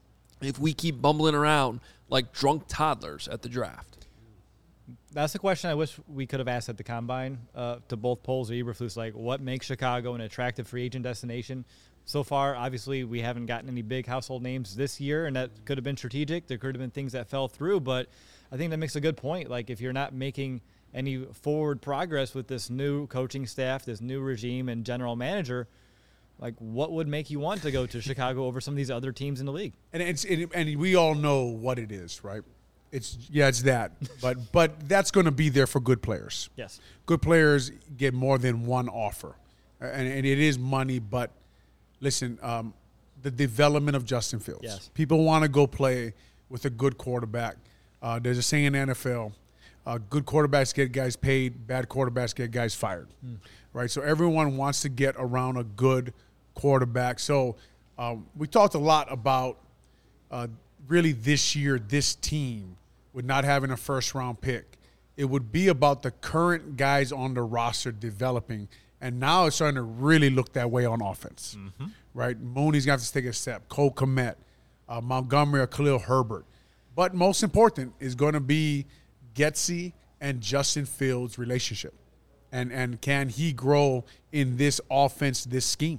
if we keep bumbling around like drunk toddlers at the draft? That's the question I wish we could have asked at the Combine uh, to both Poles or Eberflus. Like, what makes Chicago an attractive free agent destination? So far, obviously, we haven't gotten any big household names this year, and that could have been strategic. There could have been things that fell through, but I think that makes a good point. Like, if you're not making any forward progress with this new coaching staff, this new regime and general manager, like what would make you want to go to Chicago over some of these other teams in the league? And it's it, and we all know what it is, right? It's yeah, it's that. But but that's going to be there for good players. Yes. Good players get more than one offer. And, and it is money, but listen, um, the development of Justin Fields. Yes. People want to go play with a good quarterback. Uh, there's a saying in the N F L, Uh, good quarterbacks get guys paid, bad quarterbacks get guys fired, mm. right? So everyone wants to get around a good quarterback. So um, we talked a lot about uh, really this year, this team, with not having a first-round pick. It would be about the current guys on the roster developing, and now it's starting to really look that way on offense, mm-hmm. right? Mooney's going to have to take a step. Cole Kmet, uh, Montgomery or Khalil Herbert. But most important is going to be Getsy and Justin Fields' relationship, and and can he grow in this offense, this scheme?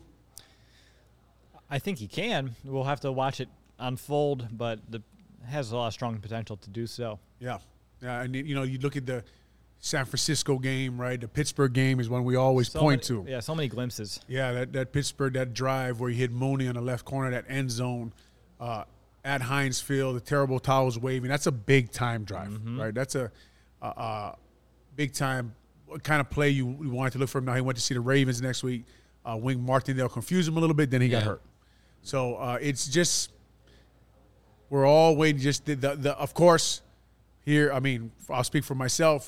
I think he can. We'll have to watch it unfold, but the has a lot of strong potential to do so. Yeah, yeah, and you know, you look at the San Francisco game, right? The Pittsburgh game is one we always so point many, to. Yeah, so many glimpses. Yeah, that that Pittsburgh, that drive where he hit Mooney on the left corner, that end zone. Uh, At Heinz Field, the terrible towels waving. That's a big-time drive, mm-hmm. right? That's a, a, a big-time kind of play you, you wanted to look for him. Now he went to see the Ravens next week. Uh, Wink Martindale confused him a little bit, then he yeah. got hurt. So uh, it's just we're all waiting. Just the, the, the of course, here, I mean, I'll speak for myself.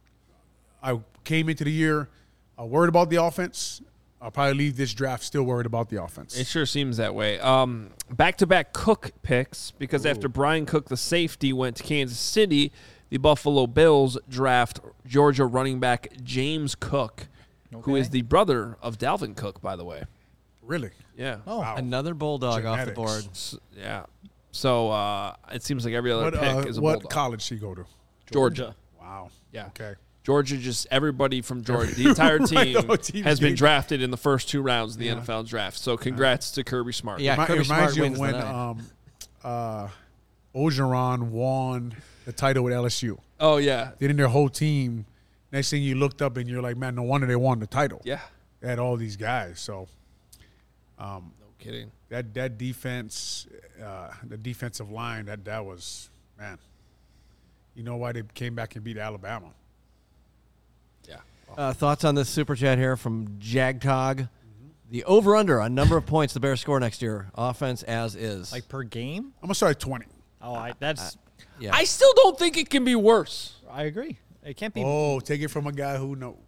I came into the year uh, worried about the offense. I'll probably leave this draft still worried about the offense. It sure seems that way. Um, back-to-back Cook picks, because Ooh. after Brian Cook, the safety, went to Kansas City, the Buffalo Bills draft Georgia running back James Cook, okay. who is the brother of Dalvin Cook, by the way. Really? Yeah. Oh, wow. Another Bulldog Genetics. off the board. So, yeah. So uh, it seems like every other what, pick uh, is a what Bulldog. What college did he go to? Georgia. Wow. Yeah. Okay. Georgia, just everybody from Georgia, the entire team right, has been drafted in the first two rounds of the yeah. N F L draft. So congrats to Kirby Smart. Yeah, it Kirby reminds Smart you wins of when the night. um, uh, Orgeron won the title with L S U. Oh, yeah. Then their whole team, next thing you looked up and you're like, man, no wonder they won the title. Yeah. They had all these guys. So, um, no kidding. That that defense, uh, the defensive line, that that was, man. you know why they came back and beat Alabama. Yeah. Uh, thoughts on this super chat here from JagTog? Mm-hmm. The over-under on number of points the Bears score next year, offense as is. Like per game? I'm going to start at twenty. Oh, I, that's. Uh, yeah. I still don't think it can be worse. I agree. It can't be. Oh, take it from a guy who knows.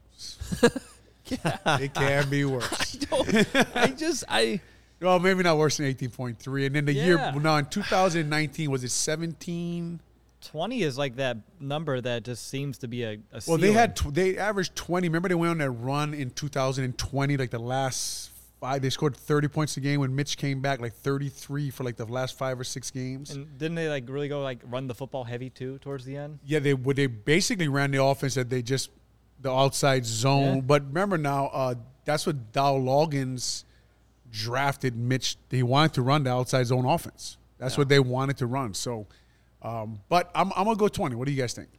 It can be worse. I don't. I just I. Well, maybe not worse than eighteen point three. And then the Yeah. year, no, in two thousand nineteen, was it seventeen? twenty is like that number that just seems to be a, a Well, they ceiling. had tw- they averaged twenty. Remember they went on that run in two thousand twenty, like the last five. They scored thirty points a game when Mitch came back, like thirty-three for like the last five or six games. And didn't they like really go like run the football heavy too towards the end? Yeah, they would. They basically ran the offense that they just the outside zone. Yeah. But remember now, uh, that's what Dow Loggins drafted Mitch. He wanted to run the outside zone offense. That's Yeah. what they wanted to run. So, um, but I'm I'm gonna go twenty. What do you guys think?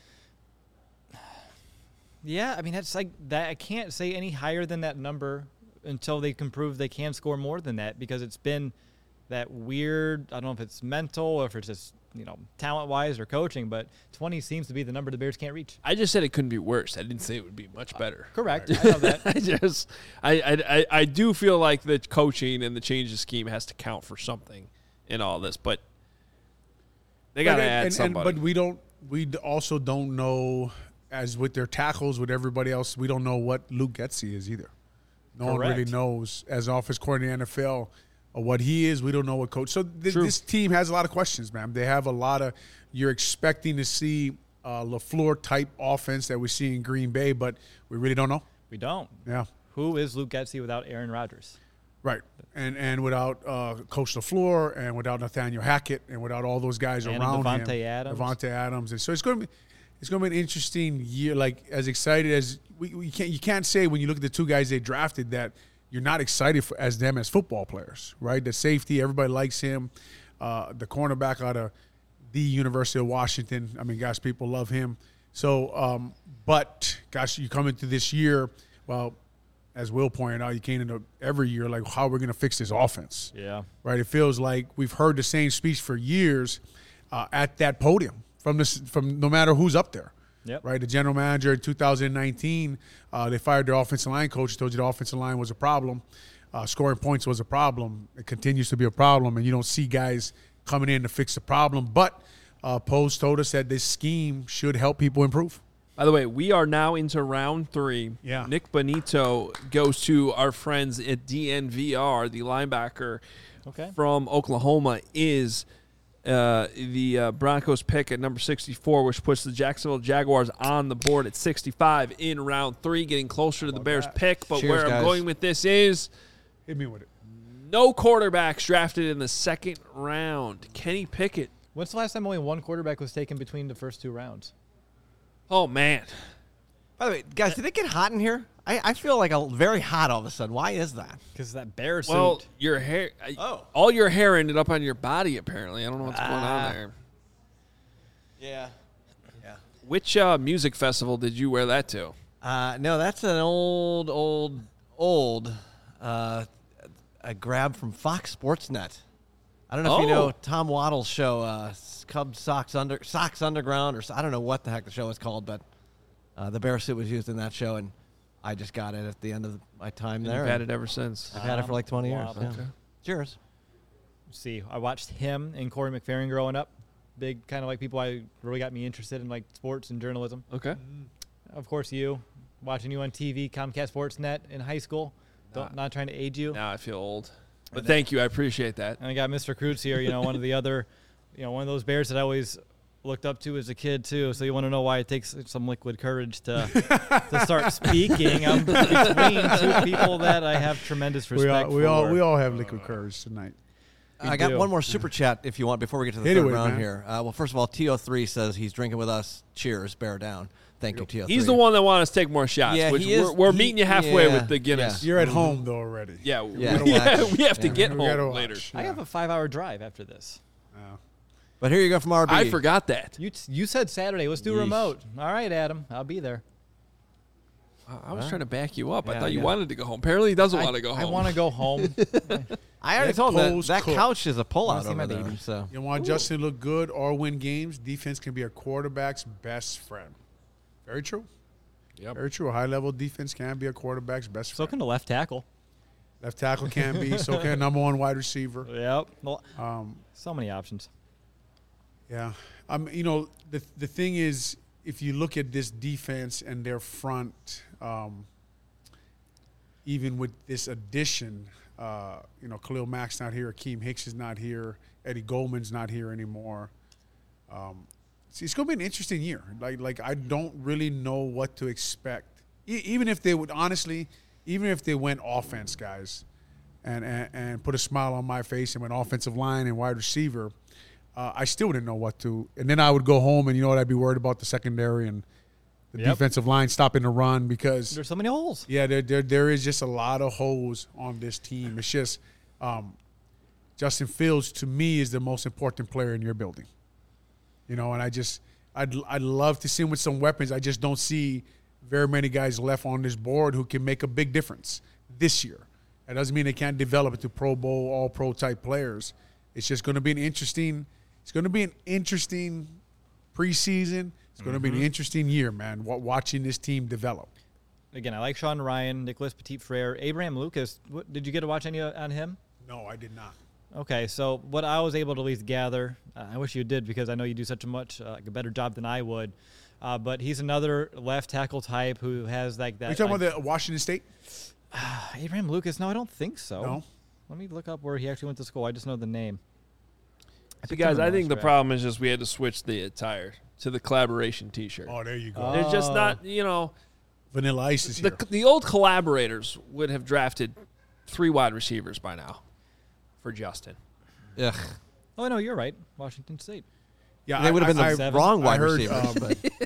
Yeah, I mean that's like that. I can't say any higher than that number until they can prove they can score more than that, because it's been that weird. I don't know if it's mental or if it's just, you know, talent wise or coaching, but twenty seems to be the number the Bears can't reach. I just said it couldn't be worse. I didn't say it would be much better. Correct. I know that. I just, I, I, I, I do feel like the coaching and the change of scheme has to count for something in all this, but they got to But- add and, somebody. And, but we don't. We d- also don't know, as with their tackles, with everybody else, we don't know what Luke Getsy is either. No one really Correct. knows as offense coordinator in the N F L uh, what he is. We don't know what coach. So th- True. this team has a lot of questions, man. They have a lot of. You're expecting to see uh, LaFleur type offense that we see in Green Bay, but we really don't know. We don't. Yeah. Who is Luke Getsy without Aaron Rodgers? Right, and and without uh, Coach LaFleur, and without Nathaniel Hackett, and without all those guys And around him, Devontae Adams. Devontae Adams, and so it's going to be, it's going to be an interesting year. Like as excited as we, we can't, you can't say when you look at the two guys they drafted that you're not excited for as them as football players, right? The safety, everybody likes him. Uh, the cornerback out of the University of Washington. I mean, gosh, people love him. So, um, but gosh, you come into this year, well. As Will pointed out, you came into every year like, how are we going to fix this offense? Yeah. Right? It feels like we've heard the same speech for years uh, at that podium from this, from no matter who's up there. Yep. Right? The general manager in two thousand nineteen, uh, they fired their offensive line coach. Told you the offensive line was a problem. Uh, scoring points was a problem. It continues to be a problem, and you don't see guys coming in to fix the problem. But uh, Post told us that this scheme should help people improve. By the way, we are now into round three. Yeah. Nick Bonito goes to our friends at D N V R. The linebacker Okay. from Oklahoma is uh, the uh, Broncos pick at number sixty-four, which puts the Jacksonville Jaguars on the board at sixty-five in round three, getting closer to the Bears that? pick. But Cheers, where I'm guys. going with this is Hit me with it. no quarterbacks drafted in the second round. Kenny Pickett. When's the last time only one quarterback was taken between the first two rounds? Oh, man. By the way, guys, did it get hot in here? I, I feel like a very hot all of a sudden. Why is that? Because that Bear suit. Well, your hair, I- Oh. all your hair ended up on your body, apparently. I don't know what's going Ah. on there. Yeah. Yeah. Which uh, music festival did you wear that to? Uh, no, that's an old, old, old uh, a grab from Fox Sports Net. I don't know if you Oh. know Tom Waddle's show, uh, Cubs Sox Under Sox Underground, or I don't know what the heck the show is called, but uh, the bear suit was used in that show, and I just got it at the end of my time And there. you've had and it ever since. I've had it for like twenty years. Waddle. Yeah. Okay. Cheers. see, I watched him and Corey McFerrin growing up. Big kind of like people I really got me interested in like sports and journalism. Okay. Of course, you watching you on T V, Comcast Sports Net in high school. Don't, not trying to age you. Now I feel old. But thank you. I appreciate that. And I got Mister Kreutz here, you know, one of the other, you know, one of those Bears that I always looked up to as a kid, too. So you want to know why it takes some liquid courage to to start speaking. I'm between two people that I have tremendous We respect all, we for. all, we all have liquid courage tonight. We I got do. one more super chat if you want before we get to the Hit it third with it, round man. here. Uh, well, first of all, T O three says he's drinking with us. Cheers, bear down. Thank you, T O three. He's the one that wanted us to take more shots, Yeah, which he is- we're, we're he- meeting you halfway yeah, with the Guinness. You're at home though already. Yeah, Yeah. we, yeah, Watch. we have to Yeah. get We gotta home watch. later. I have a five-hour drive after this. Yeah. But here you go from R B. I forgot that. You t- you said Saturday. Let's do Yeesh. remote. All right, Adam. I'll be there. I was Huh? trying to back you up. I Yeah, thought you yeah. wanted to go home. Apparently, he doesn't I, want to go home. I want to go home. I already That told him post that, that cook. couch is a Wanna pullout see over my there. baby. So You want Justin to look good or win games, defense can be a quarterback's best friend. Very true. Yep. Very true. A high-level defense can be a quarterback's best So friend. can the left tackle. Left tackle can be. So can a number one wide receiver. Yep. Well, Um, so many options. yeah. Um, you know, the the thing is, if you look at this defense and their front, um, even with this addition, uh, you know, Khalil Mack's not here, Akeem Hicks is not here, Eddie Goldman's not here anymore. Um, it's, it's going to be an interesting year. Like, like I don't really know what to expect. E- even if they would, honestly, even if they went offense, guys, and, and, and put a smile on my face and went offensive line and wide receiver, uh, I still wouldn't know what to. And then I would go home and, you know what, I'd be worried about the secondary and the Yep. defensive line stopping the run because There's so many holes. yeah, there, there there is just a lot of holes on this team. It's just um, Justin Fields to me is the most important player in your building. You know, and I just I'd I'd love to see him with some weapons. I just don't see very many guys left on this board who can make a big difference this year. That doesn't mean they can't develop into Pro Bowl, All Pro type players. It's just going to be an interesting. It's going to be an interesting preseason. It's going to be an interesting year, man. wa- Watching this team develop. Again, I like Sean Ryan, Nicholas Petit-Frere, Abraham Lucas. What, did you get to watch any uh, on him? No, I did not. Okay, so what I was able to at least gather, uh, I wish you did because I know you do such a much uh, like a better job than I would. Uh, but he's another left tackle type who has like that. Are you talking like, about the Washington State? Abraham Lucas? No, I don't think so. No. Let me look up where he actually went to school. I just know the name. See, guys, I think the Draft. problem is just we had to switch the attire to the collaboration T-shirt. Oh, there you go. Oh. There's just not, you know, Vanilla Ice is here. the the old collaborators would have drafted three wide receivers by now for Justin. ugh. Oh no, you're right. Washington State. yeah, They would have been the Seven. wrong wide I heard, receivers. um,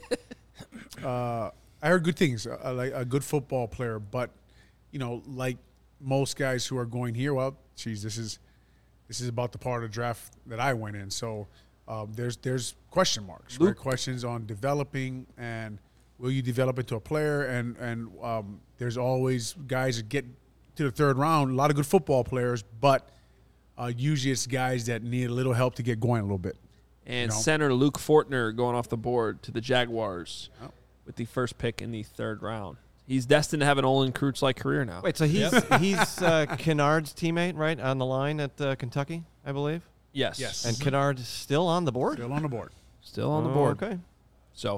but uh, I heard good things. Uh, like a good football player, but you know, like most guys who are going here, well, geez, this is this is about the part of the draft that I went in. So um, there's there's question marks, right? Luke- Questions on developing and will you develop into a player? And and um, there's always guys that get to the third round. A lot of good football players, but uh, usually it's guys that need a little help to get going a little bit. And You know? center Luke Fortner going off the board to the Jaguars Oh. with the first pick in the third round. He's destined to have an Olin Kreutz-like career now. wait, so he's he's uh, Kennard's teammate, right, on the line at uh, Kentucky, I believe. Yes. Yes. And Kennard is still on the board. Still on the board. Still on the Oh, board. Okay. So,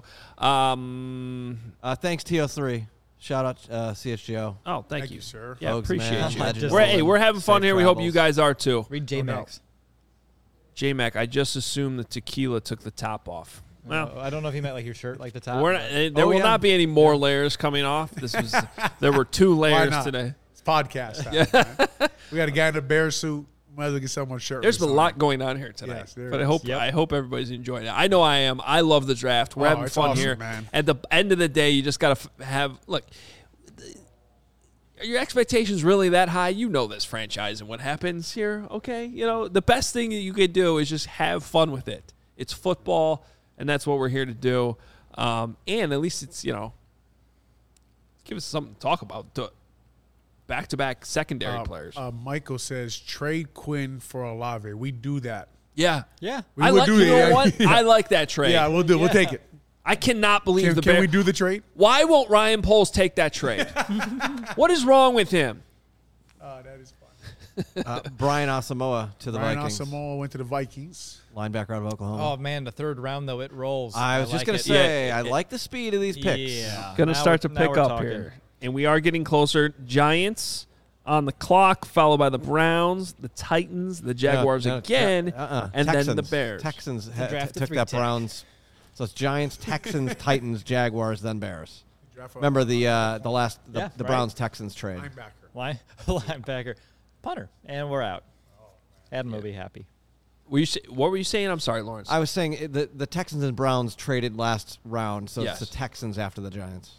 um, Uh, thanks T O three. Shout out uh, C S G O. oh, thank, Thank you. you, sir. Yeah, Folks, appreciate man. you. Legends. We're, hey, we're having fun Safe here. We hope you travels. guys are too. Read J No Max. J-Mac, I just assumed the tequila took the top off. Well, I don't know if he meant like your shirt, like the top. we're not, but- eh, there Oh, will yeah. not be any more layers coming off. This was there were two Why layers not? today. It's podcast time. man. We got a guy in a bear suit. Might as well get someone shirt. There's been a lot going on here tonight, Yes, there but I is. hope Yep. I hope everybody's enjoying it. I know I am. I love the draft. We're Oh, having it's fun awesome, here. man. At the end of the day, you just got to f- have look. Are your expectations really that high? You know this franchise and what happens here, okay? You know, the best thing that you could do is just have fun with it. It's football, and that's what we're here to do. Um, and at least it's, you know, give us something to talk about. To- Back-to-back secondary Uh, players. uh, Michael says trade Quinn for Olave. We do that. yeah. yeah. We I would like, do you it, know yeah. what? I like that trade. Yeah, we'll do. it. We'll take it. I cannot believe Can, the can Bears. we do the trade? Why won't Ryan Poles take that trade? What is wrong with him? Oh, that is fun. Uh, Brian Asamoah to the Brian Vikings. Asamoah went to the Vikings. Linebacker out of Oklahoma. Oh man, the third round though it rolls. I was just like going it. to say, Yeah, I it- like the speed of these picks. Yeah. Going to Now start to we're- now pick we're up talking. here. And we are getting closer. Giants on the clock, followed by the Browns, the Titans, the Jaguars No, no, again, uh-uh. and Texans. then the Bears. Texans ha- draft t- the took three that tech. Browns. So it's Giants, Texans, Titans, Jaguars, then Bears. Draft a Remember the uh, the last the, Yeah, the right. Browns Texans trade. linebacker. Line, linebacker, punter, and we're out. Adam will be happy. Were you say, what were you saying? I'm sorry, Lawrence. I was saying it- the the Texans and Browns traded last round, so Yes. it's the Texans after the Giants.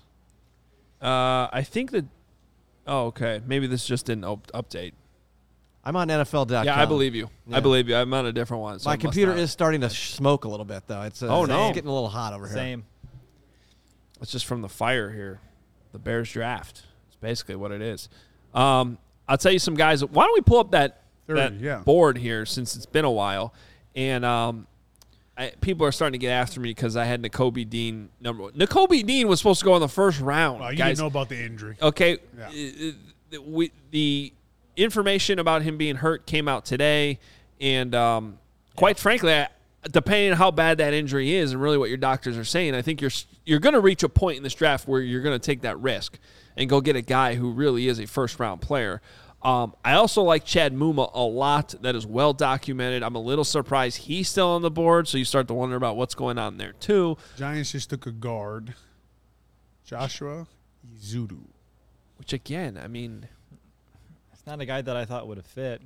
uh, I think that. Oh, okay. Maybe this just didn't op- update. I'm on N F L dot com. Yeah, I believe you. Yeah. I believe you. I'm on a different one. So My it must computer not. is starting to sh- smoke a little bit, though. It's uh, Oh, no. it's getting a little hot over here. Same. It's just from the fire here. The the Bears draft. It's basically what it is. Um, I'll tell you some guys. Why don't we pull up that, thirty, that yeah. board here since it's been a while? And um, I, people are starting to get after me because I had Nakobe Dean number one. Nakobe Dean was supposed to go in the first round. Well, you guys. didn't know about the injury. Okay. Yeah. Uh, we, the information about him being hurt came out today. And um, quite yeah. frankly, I, depending on how bad that injury is and really what your doctors are saying, I think you're you're going to reach a point in this draft where you're going to take that risk and go get a guy who really is a first-round player. Um, I also like Chad Muma a lot. That is well documented. I'm a little surprised he's still on the board, so you start to wonder about what's going on there too. Giants just took a guard, Joshua Izudu. Which, again, I mean... It's not a guy that I thought would have fit.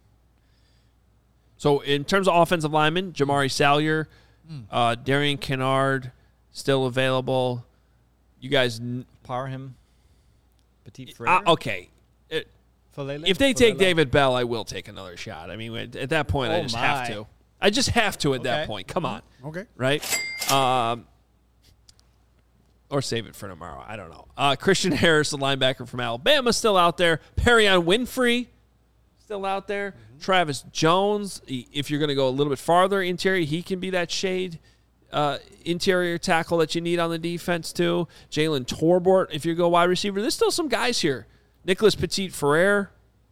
So, in terms of offensive linemen, Jamari Salyer, mm. uh, Darian Kennard, still available. You guys... N- Parham. Petit Frere. Uh, okay. It, if they take David Bell, I will take another shot. I mean, at that point, oh I just my. have to. I just have to at okay. that point. Come on. Okay. Right? Um, or save it for tomorrow. I don't know. Uh, Christian Harris, the linebacker from Alabama, still out there. Perion Winfrey, still out there. Mm-hmm. Travis Jones, if you're going to go a little bit farther interior, he can be that shade uh, interior tackle that you need on the defense too. Jalen Torbort, if you go wide receiver. There's still some guys here. Nicholas Petit-Frere.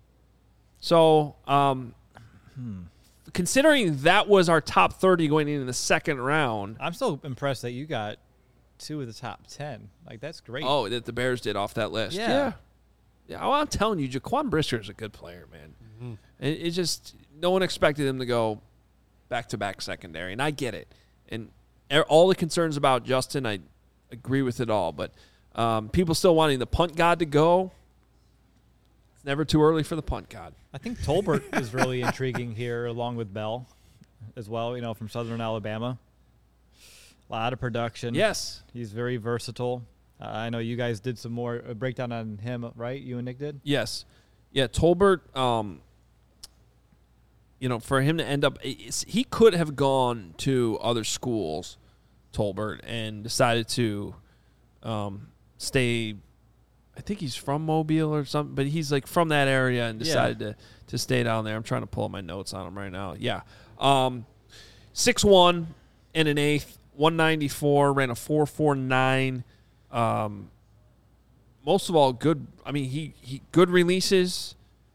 So, um, hmm. considering that was our top thirty going into the second round. I'm still impressed that you got two of the top ten. Like, that's great. Oh, that the Bears did off that list. Yeah. Yeah. yeah well, I'm telling you, Jaquan Brisker is a good player, man. Mm-hmm. It, it just, no one expected him to go back-to-back secondary, and I get it. And all the concerns about Justin, I agree with it all. But um, people still wanting the punt god to go. It's never too early for the punt god. I think Tolbert is really intriguing here, along with Bell as well, you know, from Southern Alabama. A lot of production. Yes. He's very versatile. Uh, I know you guys did some more a breakdown on him, right? You and Nick did? Yes. Yeah, Tolbert, um, you know, for him to end up, he could have gone to other schools, Tolbert, and decided to um, stay. I think he's from Mobile or something, but he's like from that area and decided yeah. to, to stay down there. I'm trying to pull up my notes on him right now. Yeah. Um, six one and an eighth, one ninety-four, ran a four four nine. Um, most of all, good. I mean, he, he good releases,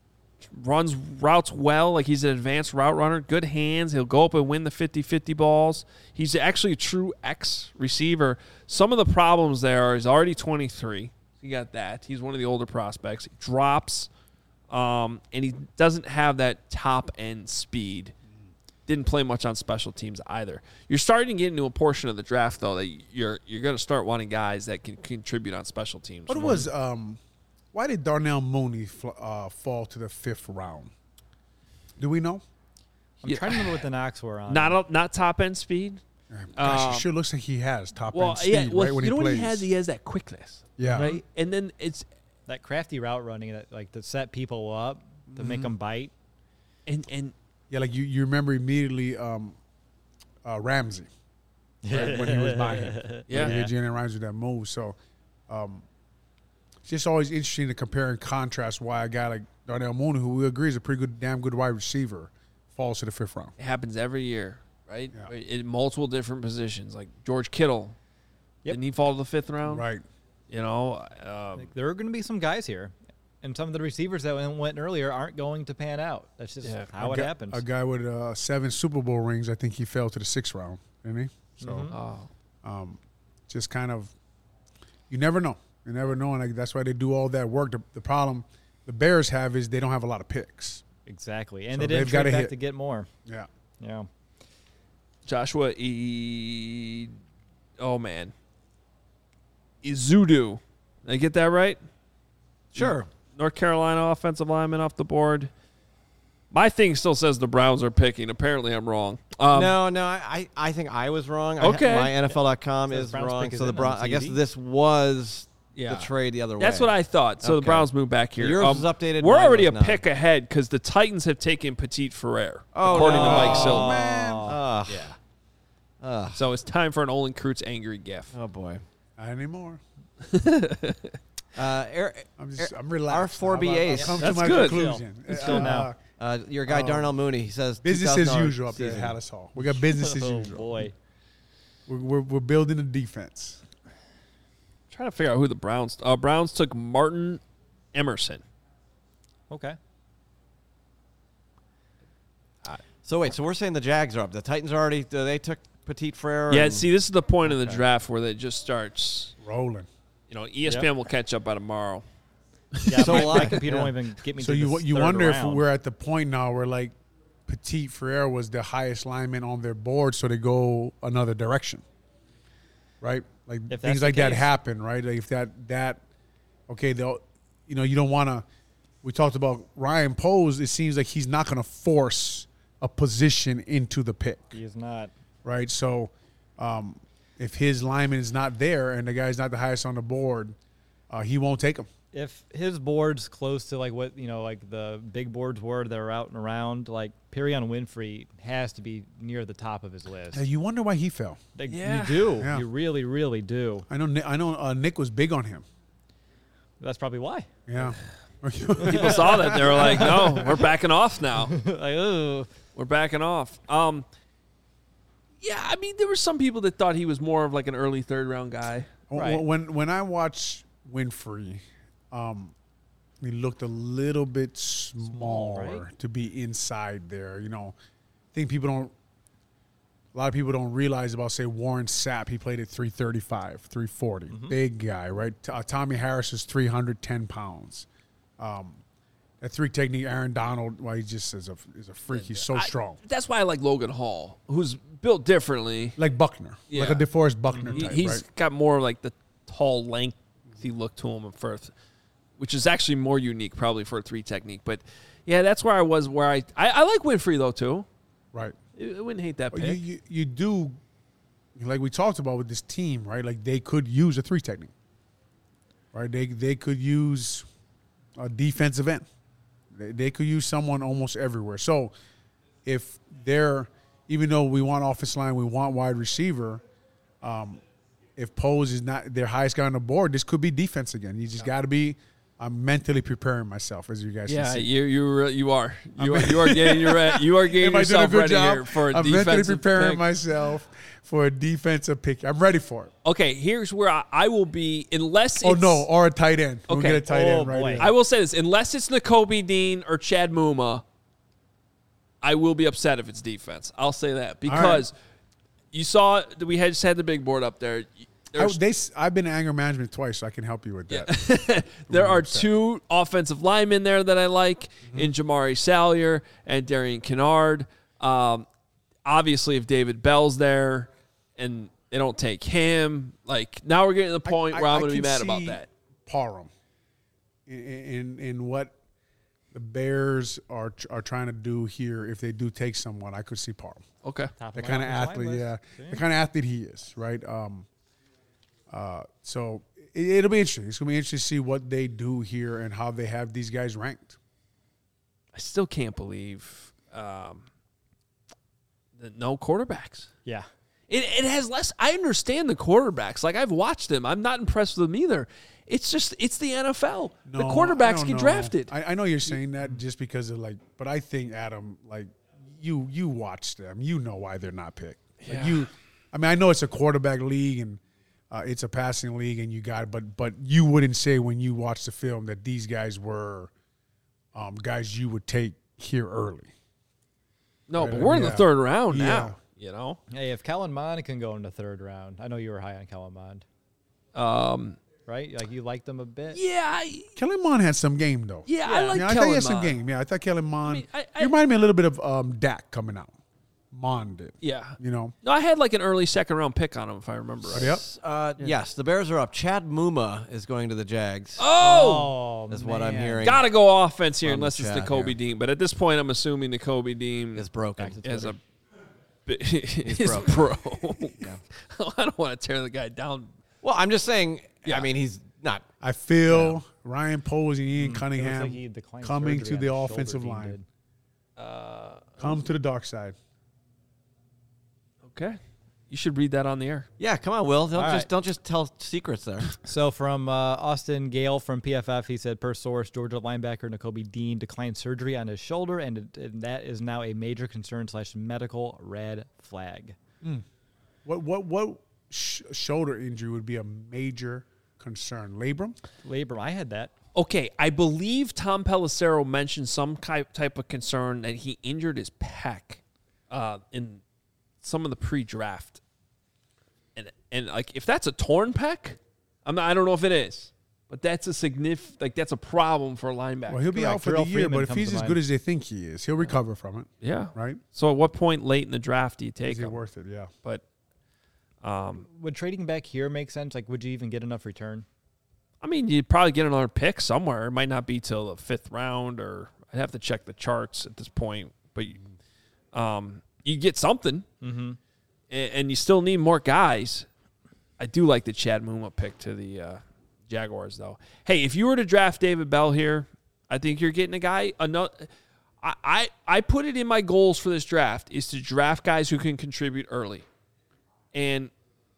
runs routes well. Like, he's an advanced route runner, good hands. He'll go up and win the fifty-fifty balls. He's actually a true X receiver. Some of the problems there are he's already twenty-three. You got that. He's one of the older prospects. He drops, um, and he doesn't have that top-end speed. Didn't play much on special teams either. You're starting to get into a portion of the draft, though, that you're you're going to start wanting guys that can contribute on special teams. What was um, why did Darnell Mooney fl- uh, fall to the fifth round? Do we know? I'm Yeah. trying to remember what the knocks were on. Not a, not top-end speed? Gosh, Um, it sure looks like he has top Well, end speed yeah, well, right when you he know plays. what he has? He has that quickness. Yeah. Right? And then it's that crafty route running, that like to set people up, to mm-hmm. make them bite. and and yeah, like you, you remember immediately um, uh, Ramsey right, when he was by him. Yeah. Like, Jalen Ramsey that move. So um, it's just always interesting to compare and contrast why a guy like Darnell Mooney, who we agree is a pretty good, damn good wide receiver, falls to the fifth round. it happens every year, right? Yeah. In multiple different positions. Like George Kittle. Yep. Didn't he fall to the fifth round? Right. You know, um, Like, there are going to be some guys here, and some of the receivers that went earlier aren't going to pan out. That's just Yeah. how a it guy, happens. A guy with uh, seven Super Bowl rings, I think he fell to the sixth round, didn't he? So Mhm. oh, um, just kind of, you never know. You never know, and like, that's why they do all that work. The, the problem the Bears have is they don't have a lot of picks. Exactly, and So they didn't they've gotta trade back hit. to get more. Yeah. Yeah. Joshua E. Oh, man. Izudu. Did I get that right? Sure. North Carolina offensive lineman off the board. My thing still says the Browns are picking. Apparently, I'm wrong. Um, no, no, I, I think I was wrong. Okay. I, my N F L dot com So the is Browns wrong. pick is So the in Brown, on I guess T V? this was Yeah. the trade the other way. That's what I thought. So the Okay. Browns move back here. Yours Um, was updated, We're mine already was a not. pick ahead because the Titans have taken Petit-Frere, Oh, according no. to Mike Silver. Oh, man. Ugh. Yeah. Ugh. So it's time for an Olin Kreutz angry gif. Oh, boy. Not anymore. Uh, Air, I'm just, Air, I'm relaxed. our four B As. I've come That's to my good. conclusion. It's still Uh, now. Uh, your guy Um, Darnell Mooney, he says Business two as thousand dollars usual up there at season. Hallis Hall. We got business as Oh, usual. boy. We're, we're we're building a defense. Trying to figure out who the Browns. Uh, Browns took Martin Emerson. Okay. So wait, so we're saying the Jags are up. The Titans are already, they took Petit Frere. Yeah, and- see, this is the point in the Okay. draft where it just starts. Rolling. You know, E S P N will catch up by tomorrow. Yeah, So my, will my I. computer Yeah. won't even get me So to you this you third wonder round. if we're at the point now where like Petit Frere was the highest lineman on their board, so they go another direction, right? Like If that's things the like that case. happen, right? Like if that that okay, they'll you know you don't want to. We talked about Ryan Poles. It seems like he's not going to force a position into the pick, He is not. right? So um, if his lineman is not there and the guy's not the highest on the board, uh, he won't take him. If his board's close to like what you know, like the big boards were that are out and around, like Perion Winfrey has to be near the top of his list. Uh, you wonder why he fell. Like, Yeah. You do. Yeah. You really, really do. I know. Ni- I know. Uh, Nick was big on him. That's probably why. Yeah. People saw that. They were like, no, we're backing off now. like, oh, We're backing off. Um, yeah, I mean, there were some people that thought he was more of like an early third round guy. Right. When when I watch Winfrey, um, he looked a little bit smaller right? to be inside there. You know, I think people don't. A lot of people don't realize about, say, Warren Sapp. He played at three thirty-five, three forty. Mm-hmm. Big guy, right? T- uh, Tommy Harris is three hundred ten pounds. Um, that three technique, Aaron Donald, well, he just is a, is a freak. He's so I- strong. That's why I like Logan Hall, who's built differently. Like Buckner. Yeah. Like a DeForest Buckner He, type, he's right? got more like the tall, lengthy look to him at first, which is actually more unique probably for a three technique. But, yeah, that's where I was where I – I, I like Winfrey, though, too. Right. I, I wouldn't hate that Well, pick. you, you you do, like we talked about with this team, right? Like they could use a three technique, right? They they could use a defensive end. They, they could use someone almost everywhere. So if they're, even though we want offensive line, we want wide receiver, um, if Pose is not their highest guy on the board, this could be defense again. You just got to be. I'm mentally preparing myself, as you guys yeah, can see. you you you are you are you are getting your you are getting Am I doing a yourself good ready job? here for a I'm mentally defensive preparing pick. myself for a defensive pick. I'm ready for it. Okay, here's where I, I will be unless Oh it's, no, or a tight end. We'll Okay. get a tight Oh, end right boy. here. I will say this, unless it's Nakobe Dean or Chad Muma, I will be upset if it's defense. I'll say that because you saw that we had just had the big board up there. I, There's, they, I've been in anger management twice, so I can help you with that. there are upset. two offensive linemen there that I like Mm-hmm. in Jamari Salyer and Darian Kennard. Um, obviously, if David Bell's there and they don't take him, like now we're getting to the point where I- I'm I going to be can mad about see that. Parham in, in in what the Bears are are trying to do here. If they do take someone, I could see Parham. Okay. top The my kind of offensive line athlete, list. yeah, See? the kind of athlete he is, right? Um, uh, so it, it'll be interesting. It's gonna be interesting to see what they do here and how they have these guys ranked. I still can't believe um, that no quarterbacks. Yeah. It, it has less. I understand the quarterbacks. Like I've watched them. I'm not impressed with them either. It's just it's the N F L. the No, I quarterbacks don't get know. drafted. I, I know you're saying that just because of like, but I think Adam, like you you watch them, you know why they're not picked. Like Yeah. you, I mean, I know it's a quarterback league and uh, it's a passing league, and you got, but but you wouldn't say when you watch the film that these guys were um, guys you would take here early. no, Right, but we're in the yeah. third round Yeah. now. You know. Hey, if Kellen Mond can go in the third round, I know you were high on Kellen Mond, Um, right? Like you liked them a bit. yeah, I, Kellen Mond had some game though. yeah, I Yeah. like yeah, I thought Kellen he had some Mond. game. Yeah, I thought Kellen Mond. mean, I- I- he reminded me a little bit of um, Dak coming out. Mond did. Yeah. You know. No, I had like an early second round pick on him if I remember right. Yep. Uh, Yes, the Bears are up. Chad Muma is going to the Jags. Oh, Oh, That's what I'm man. hearing. gotta go offense here From unless it's Chad Nakobe here. Dean. But at this point, I'm assuming Nakobe Dean Is broken. Back to is a. He's He's broken. broke. I don't want to tear the guy down. Well, I'm just saying. Yeah. I mean, he's not. I feel Ryan Posey, Ian It looks Cunningham like he declined coming surgery to on the his shoulder, offensive Dean line. did. Uh, Come to the dark side. okay. You should read that on the air. Yeah, come on, Will. Don't All just right. don't just tell secrets there. So from uh, Austin Gale from P F F, he said, per source, Georgia linebacker Nakobe Dean declined surgery on his shoulder, and, it, and that is now a major concern slash medical red flag. Mm. What what what sh- shoulder injury would be a major concern? Labrum? Labrum, I had that. Okay, I believe Tom Pelissero mentioned some type of concern that he injured his pec uh, in some of the pre-draft. And, and like, if that's a torn pec, I'm not, I don't know if it is, but that's a significant, like, that's a problem for a linebacker. Well, he'll be Correct. out for Terrell the year, Freeman but if comes he's to as mind. good as they think he is, he'll recover from it. Yeah. Right? So at what point late in the draft do you take Is it him? worth it? Yeah. But um, Would trading back here make sense? Like, would you even get enough return? I mean, you'd probably get another pick somewhere. It might not be till the fifth round, or I'd have to check the charts at this point. But um, you get something, Mm-hmm. and, and you still need more guys. I do like the Chad Muma pick to the uh, Jaguars, though. Hey, if you were to draft David Bell here, I think you're getting a guy. Another, I, I I put it in my goals for this draft is to draft guys who can contribute early, and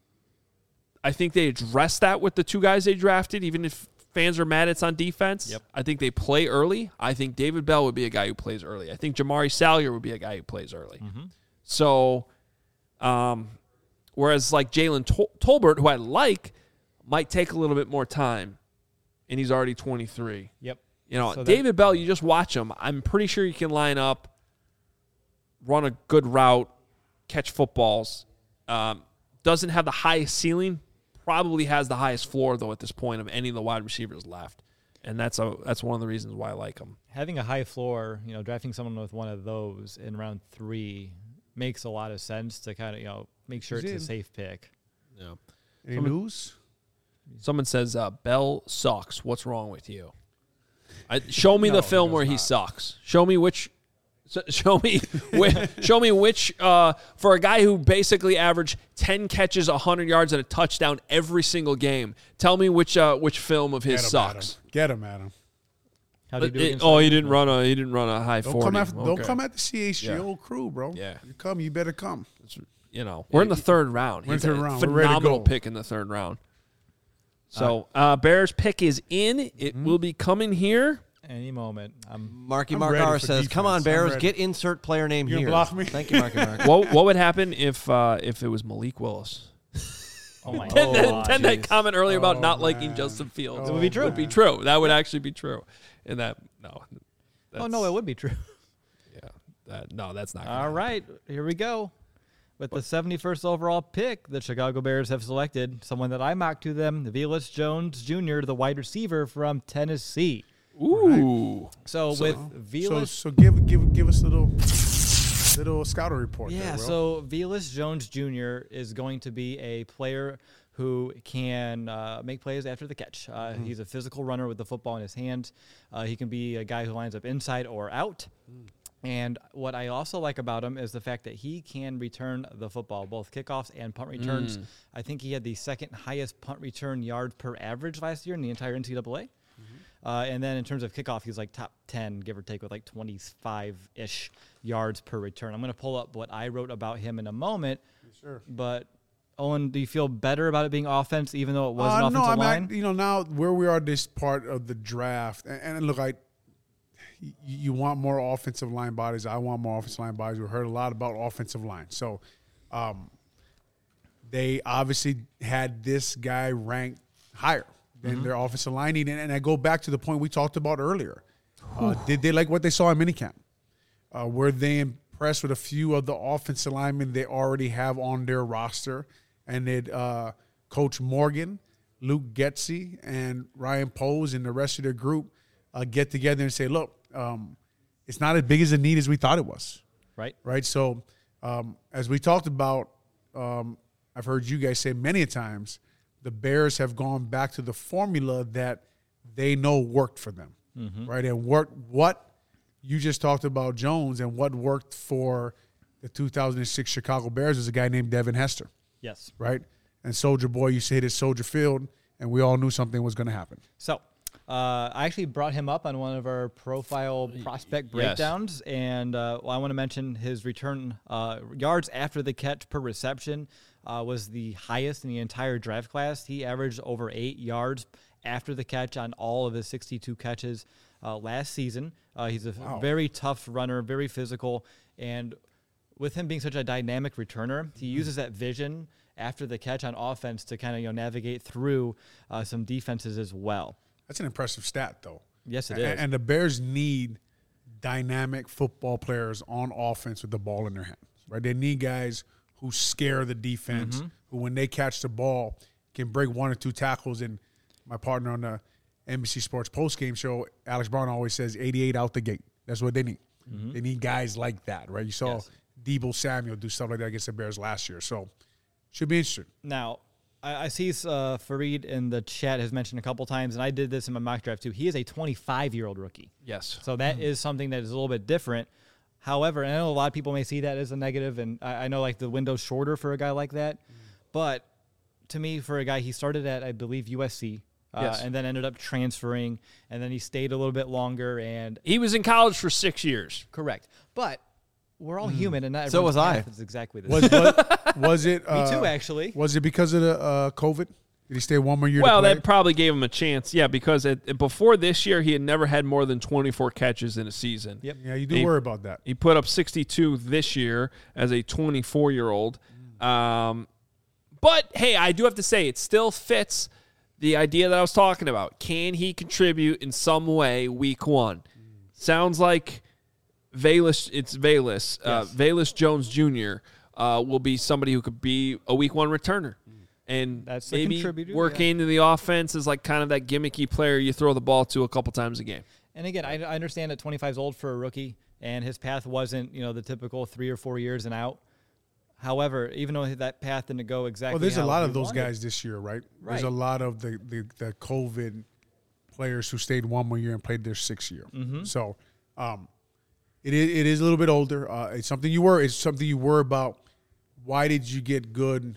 I think they addressed that with the two guys they drafted, even if fans are mad it's on defense. Yep. I think they play early. I think David Bell would be a guy who plays early. I think Jamari Salyer would be a guy who plays early. Mm-hmm. So, um, whereas like Jalen Tol- Tolbert, who I like, might take a little bit more time, and he's already twenty-three. Yep. You know, So that- David Bell, you just watch him. I'm pretty sure you can line up, run a good route, catch footballs. Um, doesn't have the highest ceiling. Probably has the highest floor, though, at this point of any of the wide receivers left. And that's a that's one of the reasons why I like him. Having a high floor, you know, drafting someone with one of those in round three makes a lot of sense to kind of, you know, make sure He's it's in. a safe pick. Yeah. Any Someone- news? Someone says, uh, Bell sucks. What's wrong with you? I, show me No, the he film does where he not. sucks. Show me which. so- Show me, which, show me which. Uh, for a guy who basically averaged ten catches, a hundred yards, and a touchdown every single game, tell me which uh, which film of his Get him, sucks. Adam. Get him, Adam. How do you But do it- against oh, that? he didn't run a he didn't run a high Don't forty. come after. Don't Okay. come at the C H G O Yeah. crew, bro. Yeah. You come. You better come. You know, we're in the third round. We're in He's the third a round. We're ready to phenomenal go. pick in the third round. So uh, Bears pick is in. It Mm-hmm. will be coming here. Any moment. I'm Marky I'm Mark ready R for says, "Come on, defense. I'm Bears, ready." get insert player name You gonna here." block me? Thank you, Marky Mark. what what would happen if uh, if it was Malik Willis? oh my Then, then, god. then that comment earlier about Oh, not liking man. Justin Fields It would be true. Would be true. That would actually be true. And that no. Oh that's- no, it would be true. Yeah. That, no, that's not. gonna All happen. right, here we go. With the seventy-first overall pick, the Chicago Bears have selected someone that I mocked to them, Velus Jones Junior, the wide receiver from Tennessee. Ooh. So, So- with So, Velus, so give give give us a little little scouter report. yeah. there, bro. So Velus Jones Junior is going to be a player who can uh, make plays after the catch. Uh, Mm-hmm. He's a physical runner with the football in his hands. Uh, he can be a guy who lines up inside or out. Mm. And what I also like about him is the fact that he can return the football, both kickoffs and punt returns. Mm. I think he had the second highest punt return yards per average last year in the entire N C double A. Mm-hmm. Uh, and then in terms of kickoff, he's like top ten, give or take, with like twenty-five-ish yards per return. I'm going to pull up what I wrote about him in a moment. Sure. But, Owen, do you feel better about it being offense, even though it was an Uh, offensive no, I mean, line? I, you know, now where we are this part of the draft, and, and look, I, you, you want more offensive line bodies. I want more offensive line bodies. We heard a lot about offensive line. So um, they obviously had this guy ranked higher than Mm-hmm. their offensive line. And, and I go back to the point we talked about earlier. Uh, did they like what they saw in minicamp? Uh, were they impressed with a few of the offensive linemen they already have on their roster? And did uh, Coach Morgan, Luke Getsy, and Ryan Pose and the rest of their group uh, get together and say, look, um, it's not as big as a need as we thought it was, right? right? So um, as we talked about, um, I've heard you guys say many a times, the Bears have gone back to the formula that they know worked for them, Mm-hmm. right? And worked what you just talked about Jones and what worked for the two thousand six Chicago Bears is a guy named Devin Hester, Yes. right? And Soldier Boy used to hit his Soldier Field, and we all knew something was going to happen. So, uh, I actually brought him up on one of our profile prospect Yes. breakdowns, and uh, well, I want to mention his return uh, yards after the catch per reception. uh, was the highest in the entire draft class. He averaged over eight yards after the catch on all of his sixty-two catches uh, last season. Uh, he's a wow. very tough runner, very physical, and with him being such a dynamic returner, he mm-hmm. uses that vision after the catch on offense to kind of you know navigate through uh, some defenses as well. That's an impressive stat, though. Yes, it and, is. And the Bears need dynamic football players on offense with the ball in their hands, right? They need guys who scare the defense, mm-hmm. who when they catch the ball can break one or two tackles. And my partner on the N B C Sports postgame show, Alex Brown, always says eighty-eight out the gate. That's what they need. Mm-hmm. They need guys like that, right? You saw yes. Deebo Samuel do stuff like that against the Bears last year. So should be interesting. Now, I, I see uh, Fareed in the chat has mentioned a couple times, and I did this in my mock draft too. He is a twenty-five-year-old rookie. Yes. So that mm-hmm. is something that is a little bit different. However, I know a lot of people may see that as a negative, and I, I know like the window's shorter for a guy like that. Mm-hmm. But to me, for a guy, he started at, I believe, U S C. Uh, yes. And then ended up transferring, and then he stayed a little bit longer. And he was in college for six years. Correct. But we're all mm. human, and not so was I. Is exactly the was, same. Was, was it? Uh, Me too, actually. Was it because of the uh, COVID? Did he stay one more year? Well, to play? that probably gave him a chance. Yeah, because it, before this year, he had never had more than twenty-four catches in a season. Yep. Yeah, you do he, worry about that. He put up sixty-two this year as a twenty-four-year-old. Mm. Um, but hey, I do have to say, it still fits the idea that I was talking about. Can he contribute in some way week one? Mm. Sounds like Velus, it's Velus, yes. uh, Velus Jones Junior Uh, will be somebody who could be a week one returner. Mm. And That's maybe work yeah. into the offense as like kind of that gimmicky player you throw the ball to a couple times a game. And again, I, I understand that twenty-five is old for a rookie, and his path wasn't, you know, the typical three or four years and out. However, even though that path didn't go exactly well, there's how a lot of he those wanted. guys this year, right? right? There's a lot of the, the, the COVID players who stayed one more year and played their sixth year. Mm-hmm. So um, it is it is a little bit older. Uh, it's something you worry. It's something you worry about. Why did you get good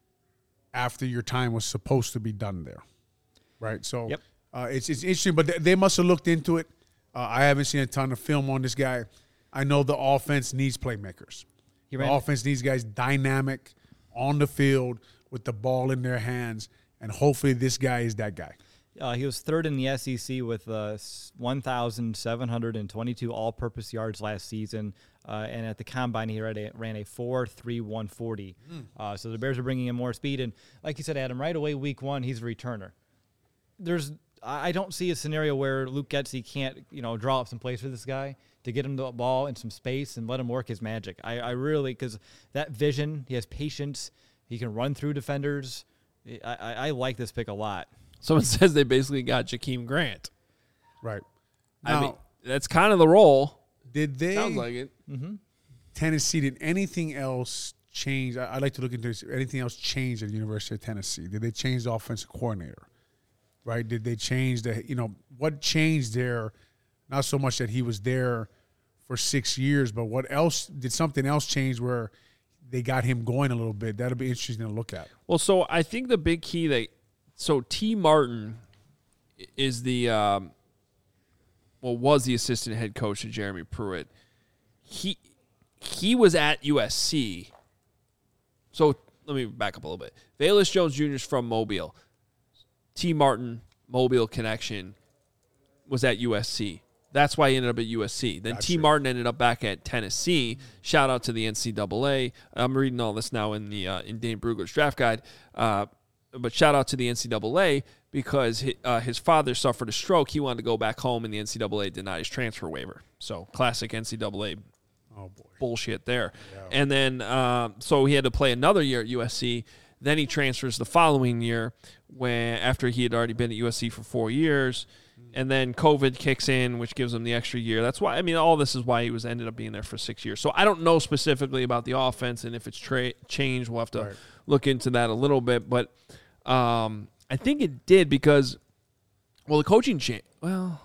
after your time was supposed to be done there, right? So yep. uh, it's it's interesting, but they must have looked into it. Uh, I haven't seen a ton of film on this guy. I know the offense needs playmakers. The offense needs guys dynamic on the field with the ball in their hands, and hopefully this guy is that guy. Uh, he was third in the S E C with uh, one thousand seven hundred twenty-two all-purpose yards last season, uh, and at the combine he ran a, ran a four three one forty. Mm. Uh, so the Bears are bringing in more speed, and like you said, Adam, right away week one he's a returner. There's I don't see a scenario where Luke Getsy can't you know draw up some plays for this guy to get him the ball in some space and let him work his magic. I, I really, because that vision, he has patience, he can run through defenders. I, I, I like this pick a lot. Someone says they basically got Jakeem Grant. Right. Now, I mean, that's kind of the role. Did they? Sounds like it. Mm-hmm. Tennessee, did anything else change? I, I'd like to look into this. Anything else change at the University of Tennessee? Did they change the offensive coordinator? Right? Did they change the, you know, what changed there? Not so much that he was there for six years, but what else, did something else change where they got him going a little bit? That'll be interesting to look at. Well, so I think the big key that, so T. Martin is the, um, well, was the assistant head coach of Jeremy Pruitt. He, he was at U S C. So let me back up a little bit. Velus Jones Junior is from Mobile. T. Martin, Mobile connection, was at U S C. That's why he ended up at U S C. Then Gotcha. T. Martin ended up back at Tennessee. Shout out to the N C double A. I'm reading all this now in the uh, in Dane Brugler's draft guide. Uh, but shout out to the N C double A because his, uh, his father suffered a stroke. He wanted to go back home, and the N C double A denied his transfer waiver. So classic N C double A oh boy. bullshit there. Yeah. And then uh, so he had to play another year at U S C. Then he transfers the following year when after he had already been at U S C for four years. And then COVID kicks in, which gives him the extra year. That's why, I mean, all this is why he was ended up being there for six years. So I don't know specifically about the offense and if it's tra- changed. We'll have to right. look into that a little bit. But um, I think it did because, well, the coaching changed. Well,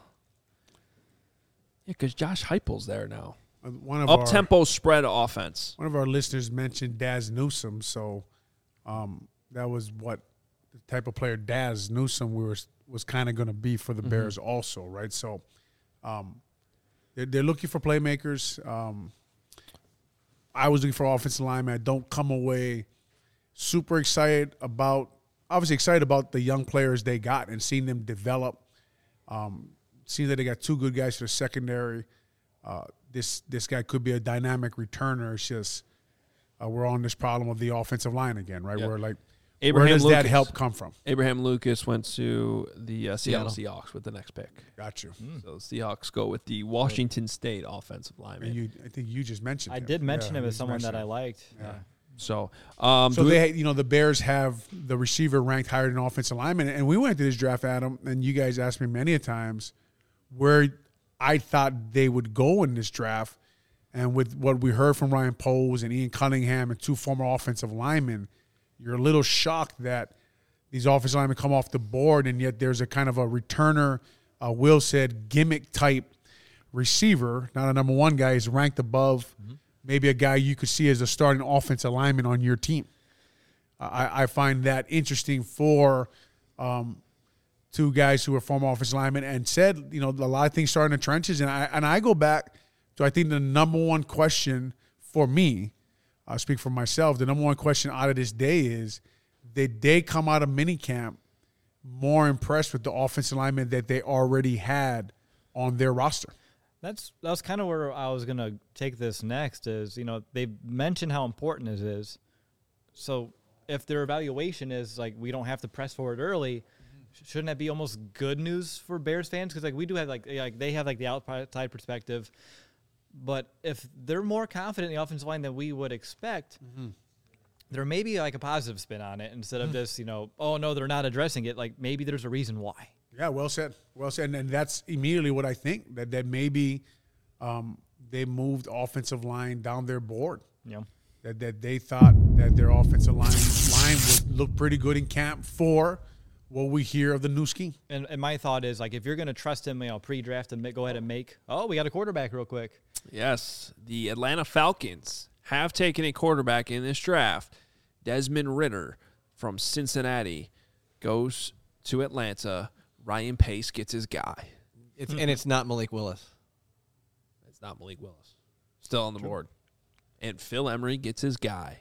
yeah, because Josh Heupel's there now. One of Up-tempo our, spread offense. One of our listeners mentioned Daz Newsome, so um, that was what the type of player Daz Newsome we were was kind of going to be for the Bears mm-hmm. also, right? So um, they're, they're looking for playmakers. Um, I was looking for offensive linemen. I don't come away super excited about, obviously excited about the young players they got and seeing them develop. Um, seeing that they got two good guys for the secondary. Uh, this this guy could be a dynamic returner. It's just uh, we're on this problem of the offensive line again, right? Yep. Where like, Abraham where does Lucas. that help come from? Abraham Lucas went to the uh, Seattle, Seattle. Seahawks with the next pick. Got you. Mm. So the Seahawks go with the Washington State offensive lineman. And you, I think you just mentioned. I him. did mention Yeah, him you as just someone that mentioned I him. liked. Yeah. Yeah. So, um, So do they, you know, the Bears have the receiver ranked higher than offensive lineman, and we went to this draft, Adam, and you guys asked me many a times where I thought they would go in this draft, and with what we heard from Ryan Poles and Ian Cunningham and two former offensive linemen, you're a little shocked that these offensive linemen come off the board, and yet there's a kind of a returner, uh, Will said, gimmick type receiver, not a number one guy, is ranked above. Mm-hmm. Maybe a guy you could see as a starting offensive lineman on your team. I, I find that interesting for um, two guys who are former offensive linemen and said, you know, a lot of things start in the trenches. And I and I go back to, I think, the number one question for me, I'll speak for myself, the number one question out of this day is, did they come out of minicamp more impressed with the offensive linemen that they already had on their roster? That's that's kind of where I was gonna take this next. Is, you know, they mentioned how important it is. So if their evaluation is like, we don't have to press forward early, shouldn't that be almost good news for Bears fans? Because like we do have like like they have like the outside perspective, but if they're more confident in the offensive line than we would expect, mm-hmm. there may be like a positive spin on it instead of just, you know, oh no, they're not addressing it. Like maybe there's a reason why. Yeah, well said. Well said. And that's immediately what I think, that, that maybe um, they moved offensive line down their board. Yeah. That that they thought that their offensive line line would look pretty good in camp for what we hear of the new scheme. And, and my thought is, like, if you're going to trust him, you know, pre-draft and go ahead and make, oh, we got a quarterback real quick. Yes, the Atlanta Falcons have taken a quarterback in this draft. Desmond Ridder from Cincinnati goes to Atlanta. Ryan Pace gets his guy. It's and it's not Malik Willis. It's not Malik Willis. Still on the board. And Phil Emery gets his guy.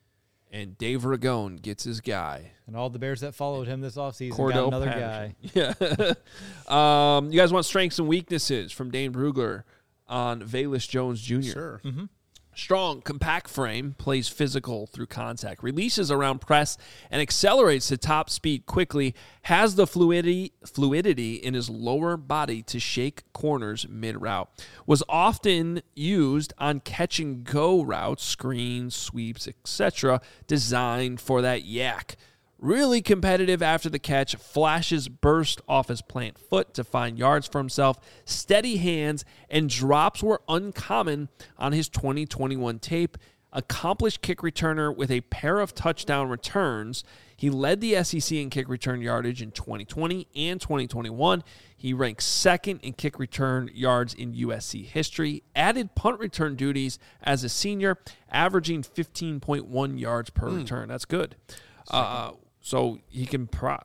And Dave Ragone gets his guy. And all the Bears that followed him this offseason Cordell got another Patterson. guy. Yeah. um, you guys want strengths and weaknesses from Dane Brugler on Velus Jones Junior? Sure. Mm-hmm. Strong, compact frame, plays physical through contact, releases around press, and accelerates to top speed quickly, has the fluidity fluidity in his lower body to shake corners mid-route. Was often used on catch-and-go routes, screens, sweeps, et cetera, designed for that yak. Really competitive after the catch, flashes burst off his plant foot to find yards for himself, steady hands, and drops were uncommon on his twenty twenty-one tape. Accomplished kick returner with a pair of touchdown returns. He led the S E C in kick return yardage in twenty twenty and twenty twenty-one. He ranked second in kick return yards in U S C history. Added punt return duties as a senior, averaging fifteen point one yards per mm. return. That's good. Uh, so he can pro-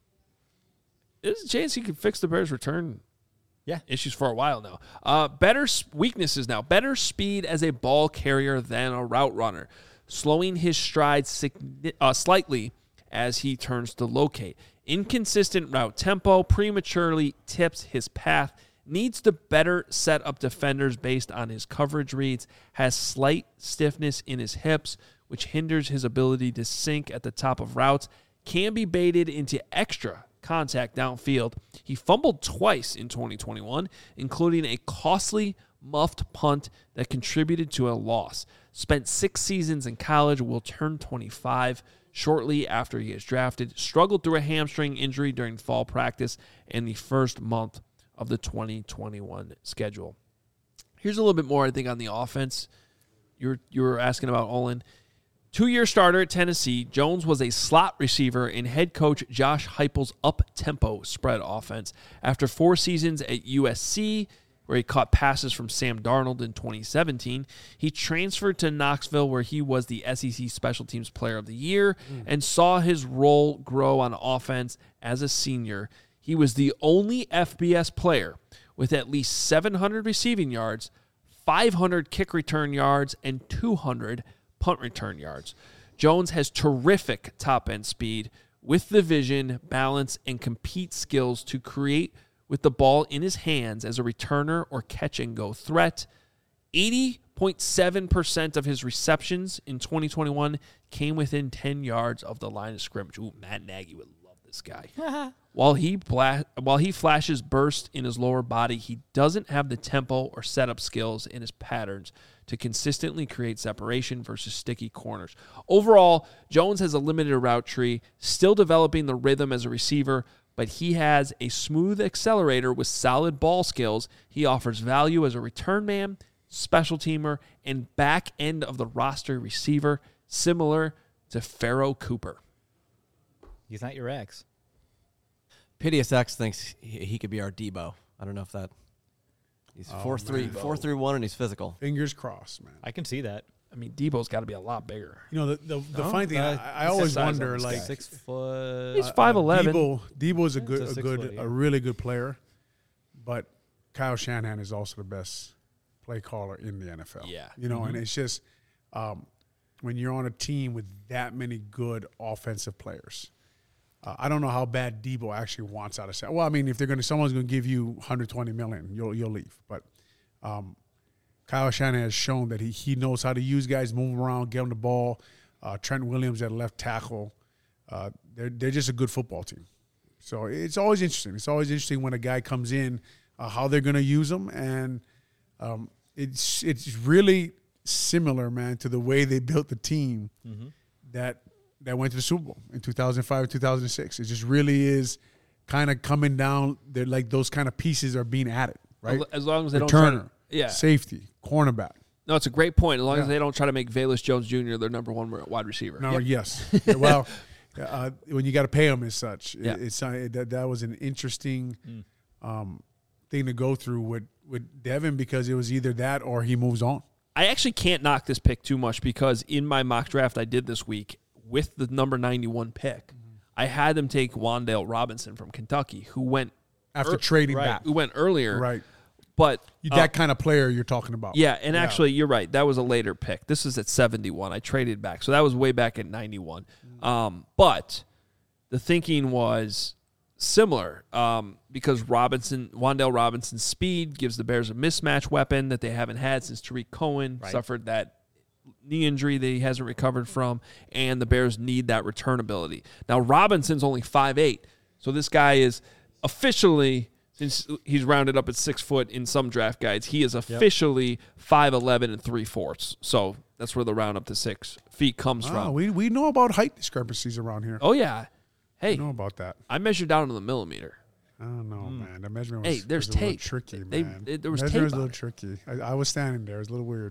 there's a chance he can fix the Bears' return yeah. issues for a while now. Uh, better weaknesses now. Better speed as a ball carrier than a route runner. Slowing his stride sig- uh, slightly as he turns to locate. Inconsistent route tempo. Prematurely tips his path. Needs to better set up defenders based on his coverage reads. Has slight stiffness in his hips, which hinders his ability to sink at the top of routes. Can be baited into extra contact downfield. He fumbled twice in twenty twenty-one, including a costly muffed punt that contributed to a loss. Spent six seasons in college, will turn twenty-five shortly after he is drafted. Struggled through a hamstring injury during fall practice and the first month of the twenty twenty-one schedule. Here's a little bit more, I think, on the offense. You were, you were asking about Olin. Two-year starter at Tennessee, Jones was a slot receiver in head coach Josh Heupel's up-tempo spread offense. After four seasons at U S C, where he caught passes from Sam Darnold in twenty seventeen, he transferred to Knoxville, where he was the S E C Special Teams Player of the Year mm. and saw his role grow on offense as a senior. He was the only F B S player with at least seven hundred receiving yards, five hundred kick return yards, and two hundred punt return yards. Jones has terrific top-end speed with the vision, balance, and compete skills to create with the ball in his hands as a returner or catch-and-go threat. eighty point seven percent of his receptions in twenty twenty-one came within ten yards of the line of scrimmage. Ooh, Matt Nagy would love this guy. While he bla- while he flashes burst in his lower body, he doesn't have the tempo or setup skills in his patterns to consistently create separation versus sticky corners. Overall, Jones has a limited route tree, still developing the rhythm as a receiver, but he has a smooth accelerator with solid ball skills. He offers value as a return man, special teamer, and back end of the roster receiver, similar to Pharaoh Cooper. He's not your ex. P D S X thinks he, he could be our Debo. I don't know if that. He's Oh, four three, man. four three one, and he's physical. Fingers crossed, man. I can see that. I mean, Debo's got to be a lot bigger. You know, the the, the No? funny thing, Uh, I, I he's always the size of wonder, this like, guy. Six foot. He's five eleven. Debo, Debo is a good, It's a a six good, foot, yeah. a really good player, but Kyle Shanahan is also the best play caller in the N F L. Yeah. You know, Mm-hmm. and it's just um, when you're on a team with that many good offensive players. Uh, I don't know how bad Debo actually wants out of San. Well, I mean, if they're going to, someone's going to give you one hundred twenty million dollars, you'll you'll leave. But um, Kyle Shanahan has shown that he he knows how to use guys, move them around, get them the ball. Uh, Trent Williams at left tackle. Uh, they're they're just a good football team. So it's always interesting. It's always interesting when a guy comes in, uh, how they're going to use them, and um, it's it's really similar, man, to the way they built the team Mm-hmm. that that went to the Super Bowl in two thousand five and two thousand six. It just really is kind of coming down. They're like those kind of pieces are being added, right? As long as they don't try Returner, to, yeah. safety, cornerback. No, it's a great point. As long Yeah. as they don't try to make Velus Jones Junior their number one wide receiver. No, Yep. yes. Yeah, well, uh, when you got to pay them as such, it- Yeah. it's uh, it, that that was an interesting Mm. um, thing to go through with with Devin because it was either that or he moves on. I actually can't knock this pick too much because in my mock draft I did this week with the number ninety-one pick, I had them take Wan'Dale Robinson from Kentucky, who went After Er- trading right. back, who went earlier. right? But You, uh, that kind of player you're talking about. yeah, and Yeah. actually you're right. That was a later pick. This is at seventy-one. I traded back. So that was way back at ninety-one. Um, but the thinking was similar um, because Robinson, Wan'Dale Robinson's speed gives the Bears a mismatch weapon that they haven't had since Tariq Cohen Right. suffered that knee injury that he hasn't recovered from, and the Bears need that return ability. Now, Robinson's only five eight, so this guy is officially, since he's rounded up at six foot in some draft guides, he is officially five eleven and three-fourths. So that's where the round up to six feet comes Ah, from. we we know about height discrepancies around here. Oh, yeah. Hey, We know about that. I measured down to the millimeter. I don't know, man. The measurement was, Hey, there's was a little tape. tricky, They- man. they- there was measurement tape was a on little tricky. I, I was standing there. It was a little weird.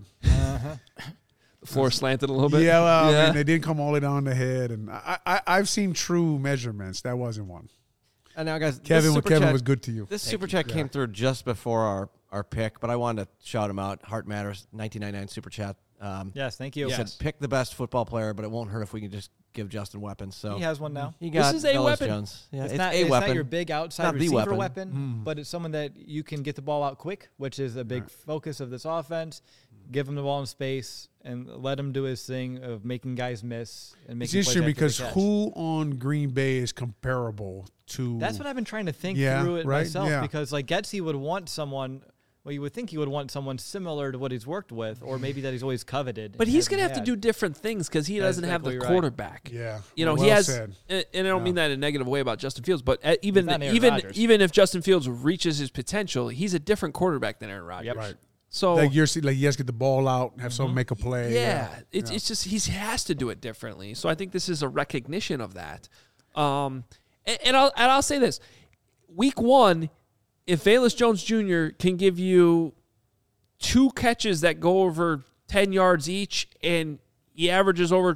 The floor slanted a little bit. Yeah, well, I Yeah. mean, they didn't come all the way down the head, and I, I I've seen true measurements. That wasn't one. And now, guys, this Kevin, super Kevin chat, was good to you. This super chat came through just before our, our pick, but I wanted to shout him out. Heart Matters, nineteen ninety-nine super chat. Um, Yes, thank you. He said, pick the best football player, but it won't hurt if we can just give Justin weapons. So He has one now. he got is a Velus weapon. Jones. Yeah, It's, it's, not, a it's weapon. not your big outside Not the receiver weapon. weapon, Mm. but it's someone that you can get the ball out quick, which is a big focus of this offense. Give him the ball in space and let him do his thing of making guys miss and It's making interesting plays after because the catch. who on Green Bay is comparable to? That's what I've been trying to think Yeah, through it right? myself Yeah. because like Getsy would want someone. Well, you would think he would want someone similar to what he's worked with, or maybe that he's always coveted. But and he's going to hasn't have to had. do different things because he That's doesn't have the exactly right. quarterback. Yeah, You know, well he has, said. and and I don't Yeah. mean that in a negative way about Justin Fields, but uh, even not Aaron even Rodgers. even if Justin Fields reaches his potential, he's a different quarterback than Aaron Rodgers. Yep. Right. So Like you're like you guys get the ball out, and have someone make a play. yeah, it's Yeah. it's just he has to do it differently. So I think this is a recognition of that. Um, and, and I'll and I'll say this: week one, if Velus Jones Junior can give you two catches that go over ten yards each, and he averages over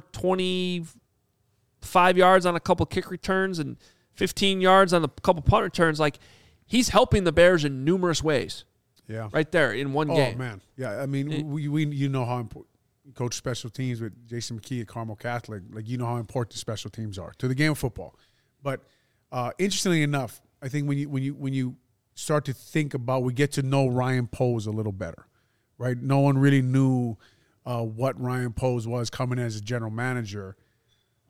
twenty-five yards on a couple kick returns and fifteen yards on a couple punt returns, like he's helping the Bears in numerous ways. yeah. Right there in one Oh game. man, yeah. I mean, It- we, we you know how important coach special teams with Jason McKee at Carmel Catholic. Like you know how important special teams are to the game of football. But uh, interestingly enough, I think when you when you when you start to think about, we get to know Ryan Poles a little better, right? No one really knew uh, what Ryan Poles was coming in as a general manager.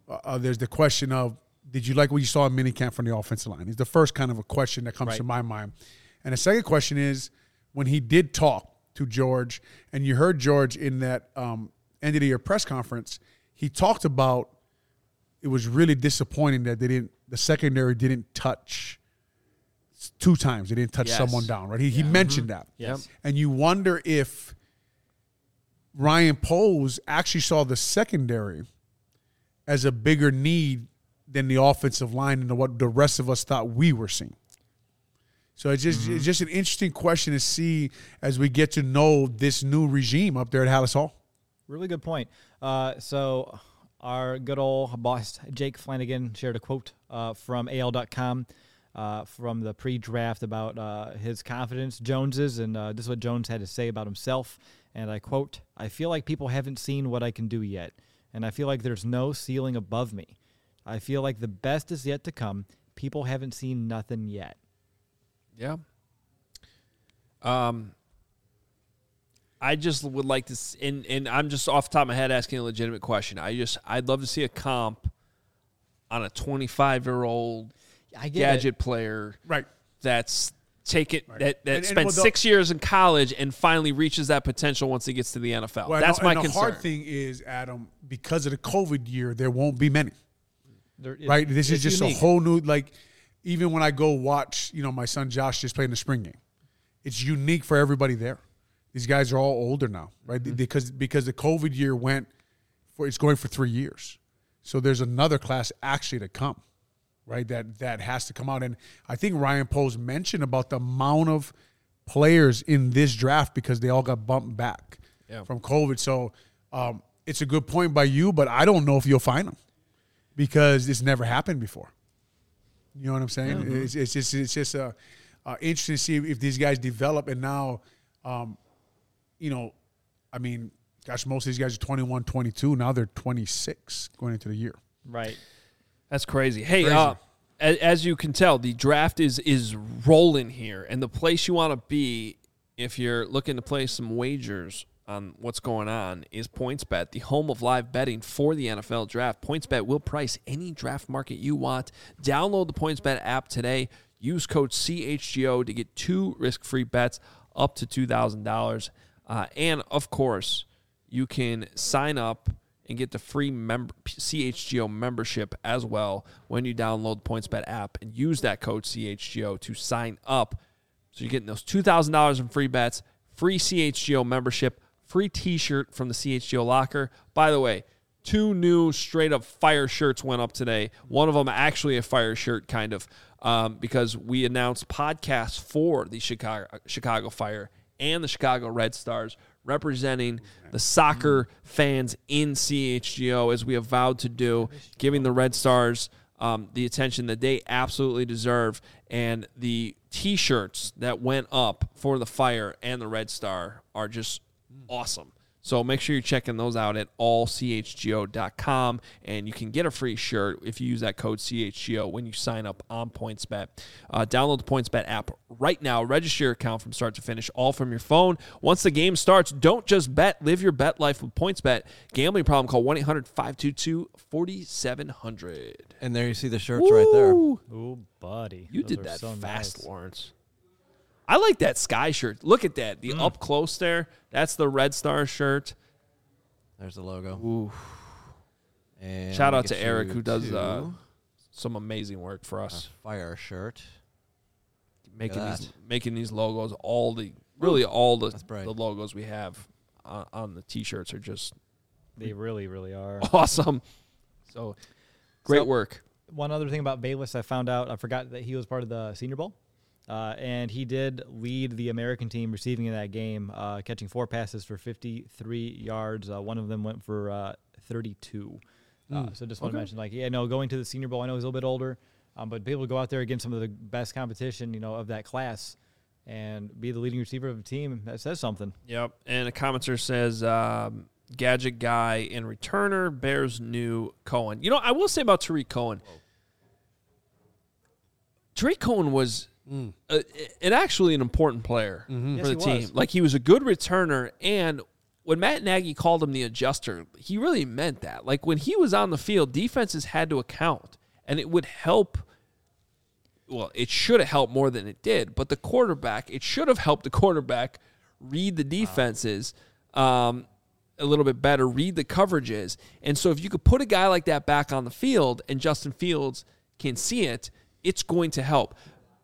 uh, there's the question of, did you like what you saw in minicamp from the offensive line? It's the first kind of a question that comes right. to my mind. And the second question is, when he did talk to George, and you heard George in that um, end of the year press conference, he talked about it was really disappointing that they didn't, the secondary didn't touch two times. They didn't touch yes. someone down, right? He, yeah. he mentioned mm-hmm. that. Yes. And you wonder if Ryan Poles actually saw the secondary as a bigger need than the offensive line and what the rest of us thought we were seeing. So it's just mm-hmm. it's just an interesting question to see as we get to know this new regime up there at Halas Hall. Really good point. Uh, so our good old boss, Jake Flanagan, shared a quote uh, from A L dot com uh, from the pre-draft about uh, his confidence, Jones's, and uh, this is what Jones had to say about himself. And I quote, "I feel like people haven't seen what I can do yet, and I feel like there's no ceiling above me. I feel like the best is yet to come. People haven't seen nothing yet." Yeah. Um, I just would like to, s- and, and I'm just off the top of my head asking a legitimate question. I just, I'd love to see a comp on a twenty-five-year-old I get gadget it. player Right. that's taken Right. that, that And- and spent well, the- six years in college and finally reaches that potential once he gets to the N F L. Well, that's and, my and concern. the hard thing is, Adam, because of the COVID year, there won't be many. There- it- Right? This is it's just unique. a whole new, like, even when I go watch, you know, my son Josh just playing the spring game, it's unique for everybody there. These guys are all older now, right? Mm-hmm. Because because the COVID year went for, it's going for three years. So there's another class actually to come, right? That that has to come out. And I think Ryan Poles mentioned about the amount of players in this draft because they all got bumped back Yeah. from COVID. So um, it's a good point by you, but I don't know if you'll find them because it's never happened before. You know what I'm saying? Mm-hmm. It's, it's just it's just uh, uh, interesting to see if these guys develop. And now, um, you know, I mean, gosh, most of these guys are twenty-one, twenty-two. Now they're twenty-six going into the year. Right. That's crazy. Hey, Crazy. Uh, as, as you can tell, the draft is is rolling here, and the place you want to be if you're looking to play some wagers on what's going on is PointsBet, the home of live betting for the N F L draft. PointsBet will price any draft market you want. Download the PointsBet app today. Use code C H G O to get two risk-free bets up to two thousand dollars. Uh, and, of course, you can sign up and get the free member, C H G O membership as well when you download the PointsBet app and use that code C H G O to sign up. So you're getting those two thousand dollars in free bets, free C H G O membership, free T-shirt from the C H G O locker. By the way, two new straight-up fire shirts went up today. One of them actually a fire shirt, kind of, um, because we announced podcasts for the Chicago, Chicago Fire and the Chicago Red Stars, representing the soccer fans in C H G O, as we have vowed to do, giving the Red Stars um, the attention that they absolutely deserve. And the T-shirts that went up for the Fire and the Red Star are just awesome. So make sure you're checking those out at all c h g o dot com, and you can get a free shirt if you use that code C H G O when you sign up on PointsBet. Uh, download the PointsBet app right now. Register your account from start to finish, all from your phone. Once the game starts, don't just bet. Live your bet life with PointsBet. Gambling problem, call one eight hundred five two two four seven zero zero. And there you see the shirts right there. Ooh, buddy. You Those did are that so fast, nice. Lawrence. I like that sky shirt. Look at that. The Mm. up close there. That's the Red Star shirt. There's the logo. Ooh. And Shout we out get to Eric, you who does to uh, some amazing work for a us, fire shirt. making at these that. making these logos. All the really all the, That's bright. the logos we have on, on the T-shirts are just They really, really are. awesome. So great So- work. One other thing about Bayless, I found out, I forgot that he was part of the Senior Bowl. Uh, and he did lead the American team receiving in that game, uh, catching four passes for fifty-three yards. Uh, one of them went for uh, thirty-two. Uh, so just want to Okay. mention, like, yeah, no, going to the Senior Bowl, I know he's a little bit older, um, but be able to go out there against some of the best competition, you know, of that class and be the leading receiver of the team, that says something. Yep. And a commenter says, um, gadget guy and returner, Bears new Cohen. You know, I will say about Tariq Cohen. Tariq Cohen was Mm. uh, an actually an important player Mm-hmm. Yes, for he the team. was. Like, he was a good returner, and when Matt Nagy called him the adjuster, he really meant that. Like, when he was on the field, defenses had to account, and it would help. Well, it should have helped more than it did, but the quarterback, it should have helped the quarterback read the defenses um, a little bit better, read the coverages. And so if you could put a guy like that back on the field and Justin Fields can see it, it's going to help.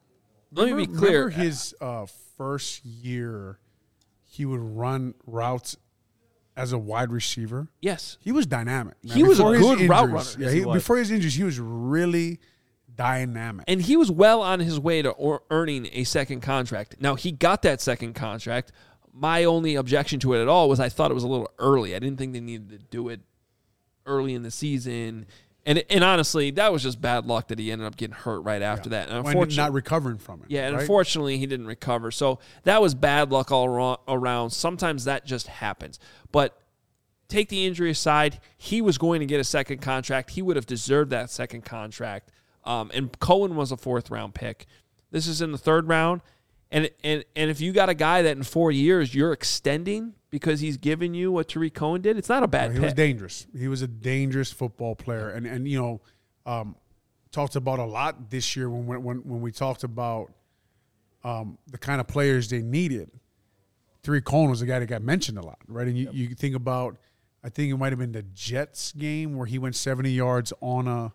Let remember, me be clear. Remember his uh, first year, he would run routes as a wide receiver? Yes. He was dynamic. Man. He was before a his good injuries, route runner. Yeah, Yes, he, he was. before his injuries, he was really dynamic. And he was well on his way to or earning a second contract. Now, he got that second contract. My only objection to it at all was I thought it was a little early. I didn't think they needed to do it early in the season. And and honestly, that was just bad luck that he ended up getting hurt right after Yeah. that. And When unfortunately, not recovering from it. yeah, and right? unfortunately, he didn't recover. So that was bad luck all aro- around. Sometimes that just happens. But take the injury aside, he was going to get a second contract. He would have deserved that second contract. Um, and Cohen was a fourth-round pick. This is in the third round. And, and and if you got a guy that in four years you're extending because he's giving you what Tariq Cohen did, it's not a bad he pick. was dangerous. He was a dangerous football player. And, and you know, um, talked about a lot this year when when when we talked about um, the kind of players they needed. Tariq Cohen was a guy that got mentioned a lot, right? And you, Yep. you think about, I think it might have been the Jets game where he went seventy yards on a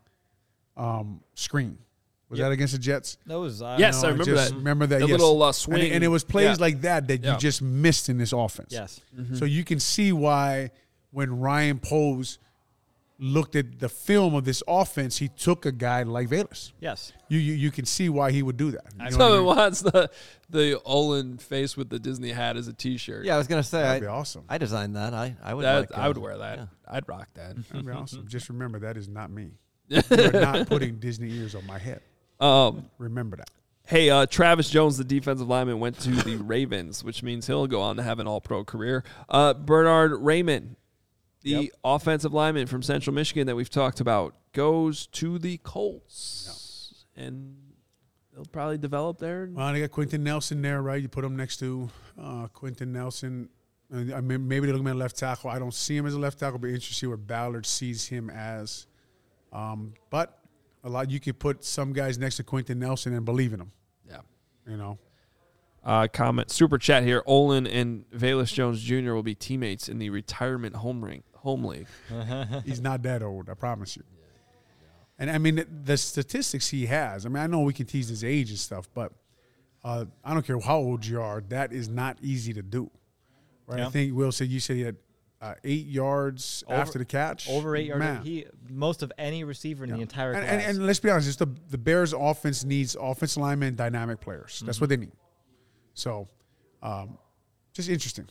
um, screen. Was Yep. that against the Jets? That was uh, Yes, No, I remember just that. Remember that? The yes. little, uh, And swing. it- And, it was plays Yeah. like that that Yeah. you just missed in this offense. Yes. Mm-hmm. So you can see why when Ryan Poles looked at the film of this offense, he took a guy like Velus. Yes. You you, you can see why he would do that. You know So what I it mean? wants the the Olin face with the Disney hat as a T-shirt. Yeah, I was gonna say That'd I, be awesome. I designed that. I I would. That, like, I would uh, wear that. yeah. I'd rock that. That'd be awesome. Just remember that is not me. You're not putting Disney ears on my head. Um, Remember that. hey, uh, Travis Jones, the defensive lineman, went to the Ravens, which means he'll go on to have an all-pro career. Uh, Bernard Raymond, the Yep. offensive lineman from Central Michigan that we've talked about, goes to the Colts. And they'll probably develop there. Well, they got Quentin Nelson there, right? You put him next to uh, Quentin Nelson. Uh, I mean, maybe they're looking at left tackle. I don't see him as a left tackle, but interesting to see what Ballard sees him as. Um, but a lot you could put some guys next to Quentin Nelson and believe in him. Yeah. You know, Uh, comment, super chat here. Olin and Velus Jones Junior will be teammates in the retirement home ring, home league. he's not that old. I promise you. And I mean, the, the statistics he has. I mean, I know we can tease his age and stuff, but uh, I don't care how old you are. That is not easy to do. Right? Yeah. I think Will said you said he had uh, eight yards Over- after the catch. Over eight yards. Man. He most of any receiver in the entire and, class. and, and let's be honest, it's the the Bears' offense needs offensive linemen, and dynamic players. That's what they need. So, um, just interesting.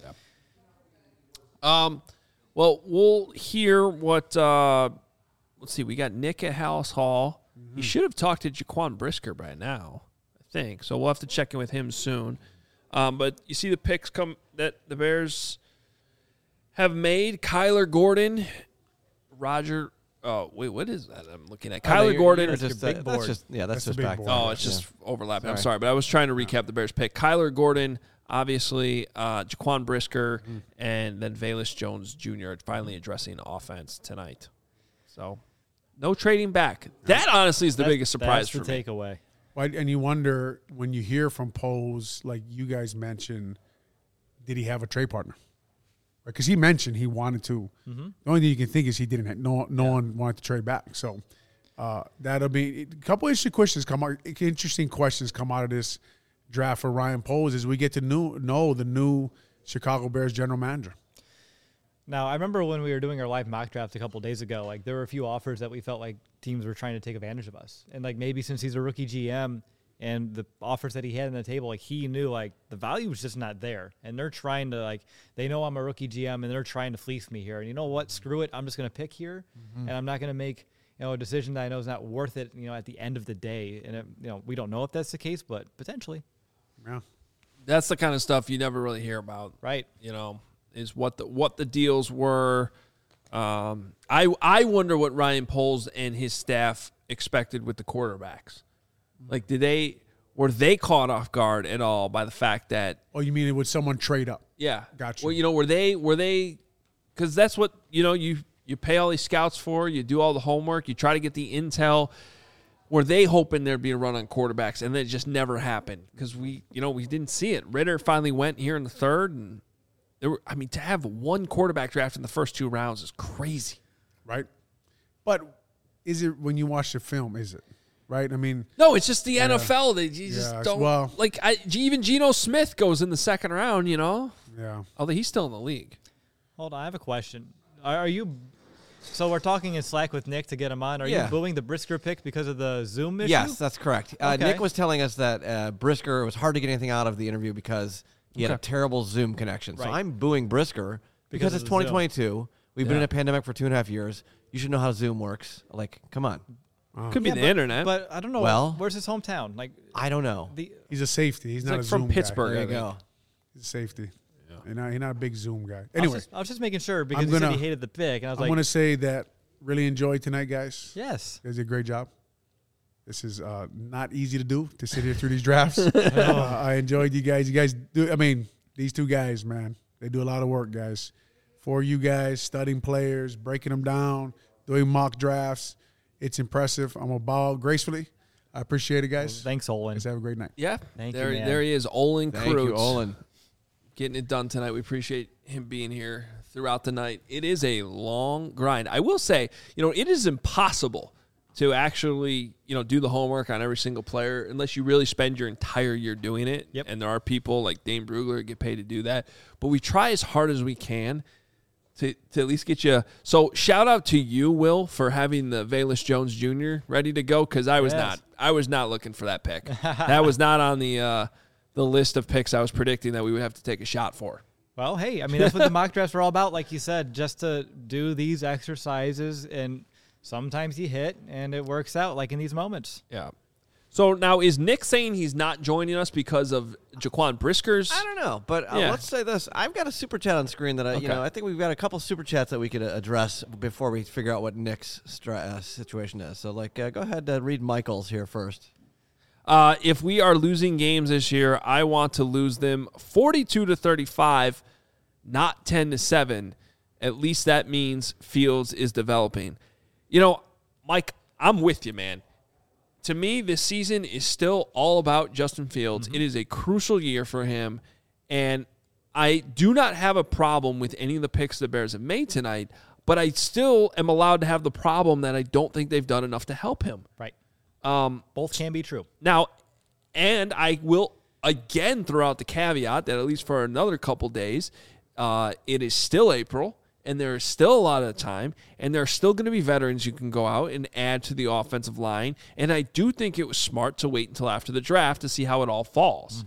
Um, well, we'll hear what. Uh, let's see. We got Nick at House Hall. He should have talked to Jaquan Brisker by now, I think. So we'll have to check in with him soon. Um, but you see the picks come that the Bears have made. Kyler Gordon, Roger. Oh wait, what is that? I'm looking at Oh, no, Kyler you're- Gordon. you're just, your uh, big that's board. just yeah, that's, That's the just big back. board. there. Oh, it's Yeah. just overlapping. I'm Sorry. sorry, but I was trying to recap the Bears pick. Kyler Gordon, obviously, uh, Jaquan Brisker, and then Velus Jones Junior finally addressing offense tonight. So, no trading back. That honestly is the That's- biggest surprise that's for the me. takeaway. Right, and you wonder when you hear from Pose, like you guys mentioned, did he have a trade partner? Because he mentioned he wanted to. Mm-hmm. The only thing you can think is he didn't. Have, no, no one wanted to trade back. So uh, that'll be a couple interesting questions come out. Interesting questions come out of this draft for Ryan Poles as we get to new, know the new Chicago Bears general manager. Now, I remember when we were doing our live mock draft a couple days ago, like there were a few offers that we felt like teams were trying to take advantage of us. And like maybe since he's a rookie G M and the offers that he had on the table, like he knew like the value was just not there. And they're trying to like, they know I'm a rookie G M and they're trying to fleece me here. And you know what? Screw it. I'm just going to pick here and I'm not going to make, you know, a decision that I know is not worth it, you know, at the end of the day. And, it, you know, we don't know if that's the case, but potentially. Yeah. That's the kind of stuff you never really hear about. Right. You know, is what the what the deals were. Um, I I wonder what Ryan Poles and his staff expected with the quarterbacks. Like, did they were they caught off guard at all by the fact that? Oh, you mean it would someone trade up? Yeah, Gotcha. Well, you know, were they were they? Because that's what you know. You you pay all these scouts for. You do all the homework. You try to get the intel. Were they hoping there'd be a run on quarterbacks, and then it just never happened because we you know we didn't see it. Ritter finally went here in the third, and there were. I mean, to have one quarterback draft in the first two rounds is crazy, right? But is it when you watch the film? Is it? Right, I mean, no, it's just the yeah. N F L. They you just Yeah, don't well- like. I, even Geno Smith goes in the second round. You know, yeah. although he's still in the league. Hold on, I have a question. Are, are you? So we're talking in Slack with Nick to get him on. Are Yeah. you booing the Brisker pick because of the Zoom issue? Yes, that's correct. Uh, Okay. Nick was telling us that uh, Brisker, it was hard to get anything out of the interview because he had a Okay. terrible Zoom connection. So Right. I'm booing Brisker because, Because of it's the twenty twenty-two. We've been Yeah. in a pandemic for two and a half years. You should know how Zoom works. Like, come on. Could be Yeah, the but, internet. But I don't know. Well- where's his hometown? Like I don't know. the He's a safety. He's He's not like a from Zoom Pittsburgh. There I you think. go. Guy. He's a safety. He's not, he's not a big Zoom guy. I was, Anyway, just, I was just making sure because I'm he said gonna- he hated the pick, and I was I like, want to say that really enjoyed tonight, guys. yes. You guys did a great job. This is uh, not easy to do, to sit here through these drafts. uh, I enjoyed you guys. You guys do, I mean, these two guys, man, they do a lot of work, guys. For you guys, studying players, breaking them down, doing mock drafts. It's impressive. I'm going to bow gracefully. I appreciate it, guys. Thanks, Olin. Guys, have a great night. Yeah, Thank you, there, man. there he is, Olin Thank you, Kreutz, Olin. getting it done tonight. We appreciate him being here throughout the night. It is a long grind. I will say, you know, it is impossible to actually, you know, do the homework on every single player unless you really spend your entire year doing it. Yep. And there are people like Dane Brugler that get paid to do that. But we try as hard as we can to, to at least get you. So shout out to you, Will, for having the Velus Jones Junior ready to go because I was Yes. not. I was not looking for that pick. That was not on the uh, the list of picks I was predicting that we would have to take a shot for. Well, hey, I mean, that's what the mock drafts are all about. Like you said, just to do these exercises, and sometimes you hit, and it works out, like in these moments. Yeah. So now is Nick saying he's not joining us because of Jaquan Brisker's? I don't know, but uh, Yeah. let's say this. I've got a super chat on screen that I, Okay. you know, I think we've got a couple super chats that we could uh, address before we figure out what Nick's stra- uh, situation is. So, like, uh, go ahead and uh, read Michael's here first. Uh, if we are losing games this year, I want to lose them forty-two to thirty-five, not ten to seven. At least that means Fields is developing. You know, Mike, I'm with you, man. To me, this season is still all about Justin Fields. It is a crucial year for him, and I do not have a problem with any of the picks the Bears have made tonight, but I still am allowed to have the problem that I don't think they've done enough to help him. Right. Um, Both can be true. now, and I will again throw out the caveat that at least for another couple days, uh, it is still April, and there is still a lot of time, and there are still going to be veterans you can go out and add to the offensive line. And I do think it was smart to wait until after the draft to see how it all falls.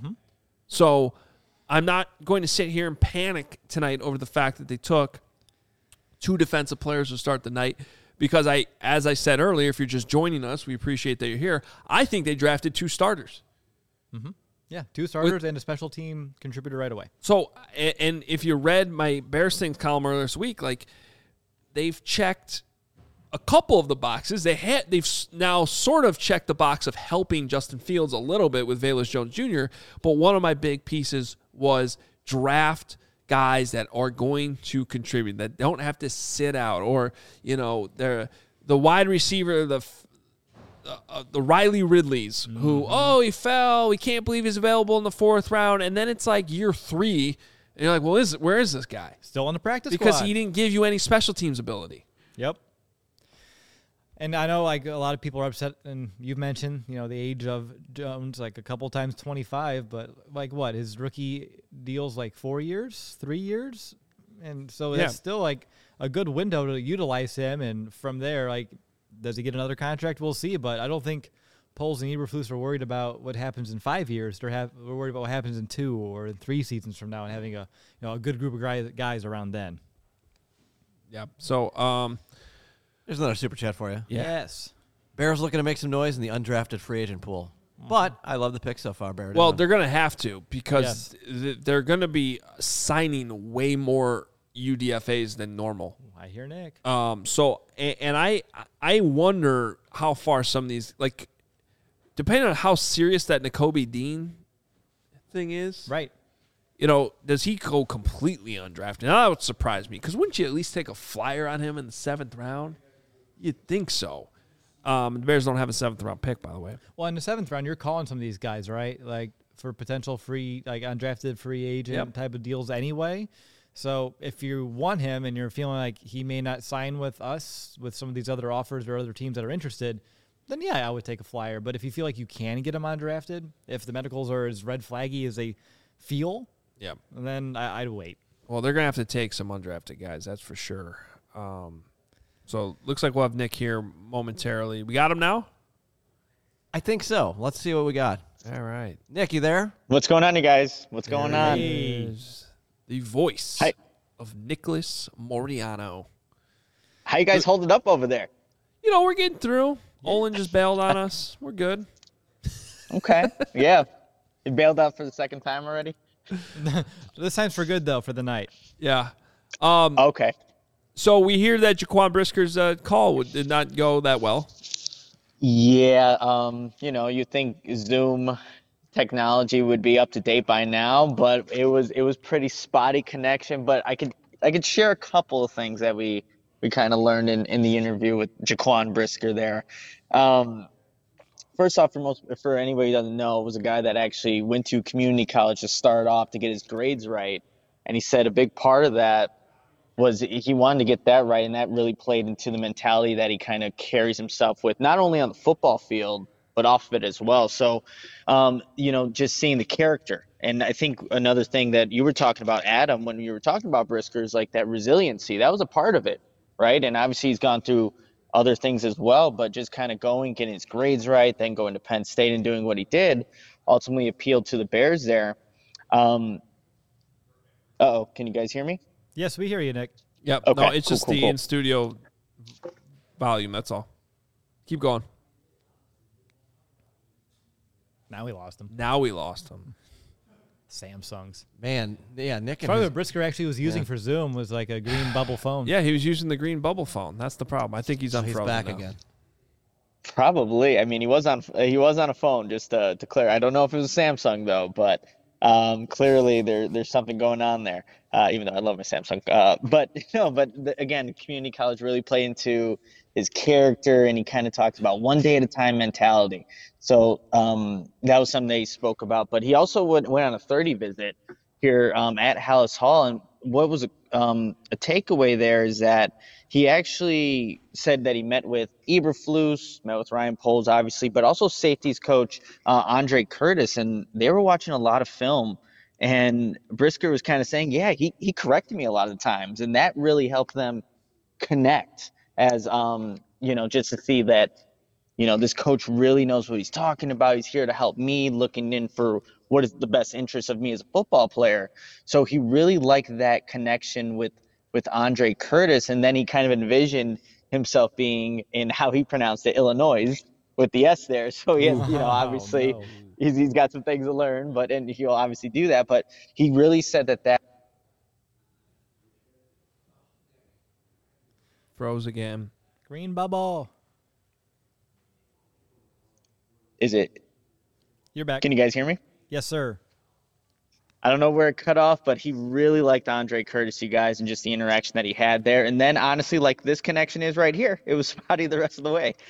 So I'm not going to sit here and panic tonight over the fact that they took two defensive players to start the night. Because I, as I said earlier, if you're just joining us, we appreciate that you're here. I think they drafted two starters. Yeah, two starters and a special team contributor right away. So, a- and if you read my Bears Things column earlier this week, like they've checked a couple of the boxes. They had they've s- now sort of checked the box of helping Justin Fields a little bit with Velus Jones Junior But one of my big pieces was draft guys that are going to contribute, that don't have to sit out, or you know, they're the wide receiver, the f- uh, the Riley Ridleys, who, oh, he fell. We can't believe he's available in the fourth round. And then it's like year three. And you're like, well, is where is this guy? Still on the practice Because squad. he didn't give you any special teams ability. Yep. And I know like a lot of people are upset, and you've mentioned, you know, the age of Jones like a couple times twenty-five, but like what? His rookie deal's like four years, three years? And so Yeah. that's still like a good window to utilize him. And from there, like, does he get another contract? We'll see. But I don't think Poles and Eberflus are worried about what happens in five years. They're, have, they're worried about what happens in two or in three seasons from now, and having a you know a good group of guys, guys around then. Yeah. So, um, There's another super chat for you. Yeah. Yes. Bears looking to make some noise in the undrafted free agent pool. But I love the pick so far, Bear. well, down. they're going to have to because Yes. th- they're going to be signing way more U D F As than normal. I hear Nick. Um, so, and, and I, I wonder how far some of these, like, depending on how serious that Nakobe Dean thing is, Right. you know, does he go completely undrafted? Now, that would surprise me, because wouldn't you at least take a flyer on him in the seventh round? You'd think so. Um, the Bears don't have a seventh round pick, by the way. Well, in the seventh round, you're calling some of these guys, right? Like for potential free, like undrafted free agent Yep. type of deals anyway. So if you want him and you're feeling like he may not sign with us with some of these other offers or other teams that are interested, then yeah, I would take a flyer. But if you feel like you can get him undrafted, if the medicals are as red flaggy as they feel, Yeah. then I, I'd wait. Well, they're going to have to take some undrafted guys, that's for sure. Um, so looks like we'll have Nick here momentarily. We got him now? I think so. Let's see what we got. All right. Nick, you there? What's going on, you guys? What's going There on? he is, the voice Hi. of Nicholas Moriano. How you guys holding up over there? You know, we're getting through. Olin just bailed on us. We're good. Okay. Yeah. You bailed out for the second time already? This time's for good, though, for the night. Yeah. Um, Okay. So we hear that Jaquan Brisker's uh, call did not go that well. Yeah. Um, you know, you think Zoom technology would be up to date by now, but it was it was pretty spotty connection. But I could I could share a couple of things that we we kind of learned in, in the interview with Jaquan Brisker there. Um, first off, for most for anybody who doesn't know, was a guy that actually went to community college to start off to get his grades right, and he said a big part of that was he wanted to get that right, and that really played into the mentality that he kind of carries himself with, not only on the football field, but off of it as well. So, um, you know, just seeing the character. And I think another thing that you were talking about, Adam, when you were talking about Brisker, is like that resiliency. That was a part of it, right? And obviously he's gone through other things as well, but just kind of going, getting his grades right, then going to Penn State and doing what he did, ultimately appealed to the Bears there. Um, uh-oh, can you guys hear me? Yes, we hear you, Nick. Yep. Okay, No, it's cool, just cool, the cool. in-studio volume. That's all. Keep going. Now we lost him. Now we lost him. Samsungs. Man, yeah, Nick and Probably his, what Brisker actually was using Yeah. for Zoom was like a green bubble phone. Yeah, he was using the green bubble phone. That's the problem. I think he's so unfrozen he's back now. again. Probably. I mean, he was on he was on a phone, just to, to clear. I don't know if it was a Samsung though, but um, clearly there there's something going on there. Uh, even though I love my Samsung, uh, but no, but the, again, community college really played into his character, and he kind of talks about one day at a time mentality. So um, that was something that he spoke about. But he also went, went on a thirty visit here um, at Hallis Hall, and what was a, um, a takeaway there is that he actually said that he met with Eberflus, met with Ryan Poles, obviously, but also safeties coach uh, Andre Curtis, and they were watching a lot of film. And Brisker was kind of saying, yeah, he, he corrected me a lot of times, and that really helped them connect as, um, you know, just to see that, you know, this coach really knows what he's talking about. He's here to help me, looking in for what is the best interest of me as a football player. So he really liked that connection with, with Andre Curtis. And then he kind of envisioned himself being in how he pronounced it, Illinois, with the S there. So he has, you know, obviously no. he's, he's got some things to learn, but, and he'll obviously do that. But he really said that that, Froze again. Green bubble. is it, You're back. can you guys hear me? Yes, sir. I don't know where it cut off, but he really liked Andre Curtis, you guys, and just the interaction that he had there. And then, honestly, like this connection is right here. It was spotty the rest of the way.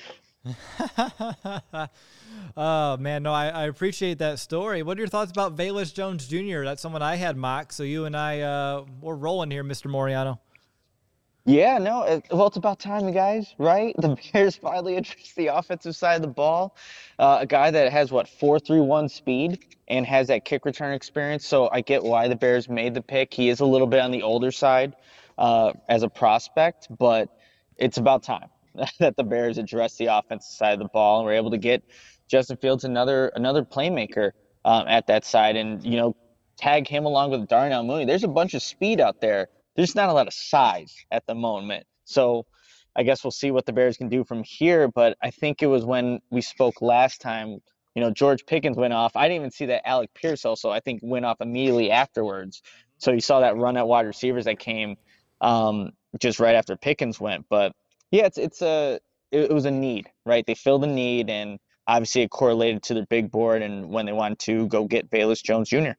Oh, man, no, I, I appreciate that story. What are your thoughts about Velus Jones Junior? That's someone I had mocked, so you and I, uh, we're rolling here, Mister Moriano. Yeah, no, it, well, it's about time, you guys, right? The Bears finally addressed the offensive side of the ball. Uh, a guy that has, what, four three one speed and has that kick return experience. So I get why the Bears made the pick. He is a little bit on the older side uh, as a prospect, but it's about time that the Bears address the offensive side of the ball and were able to get Justin Fields another another playmaker um, at that side and, you know, tag him along with Darnell Mooney. There's a bunch of speed out there. There's not a lot of size at the moment. So I guess we'll see what the Bears can do from here. But I think it was when we spoke last time, you know, George Pickens went off. I didn't even see that Alec Pierce also, I think, went off immediately afterwards. So you saw that run at wide receivers that came um, just right after Pickens went. But, yeah, it's it's a it, it was a need, right? They filled a need, and obviously it correlated to their big board and when they wanted to go get Velus Jones Junior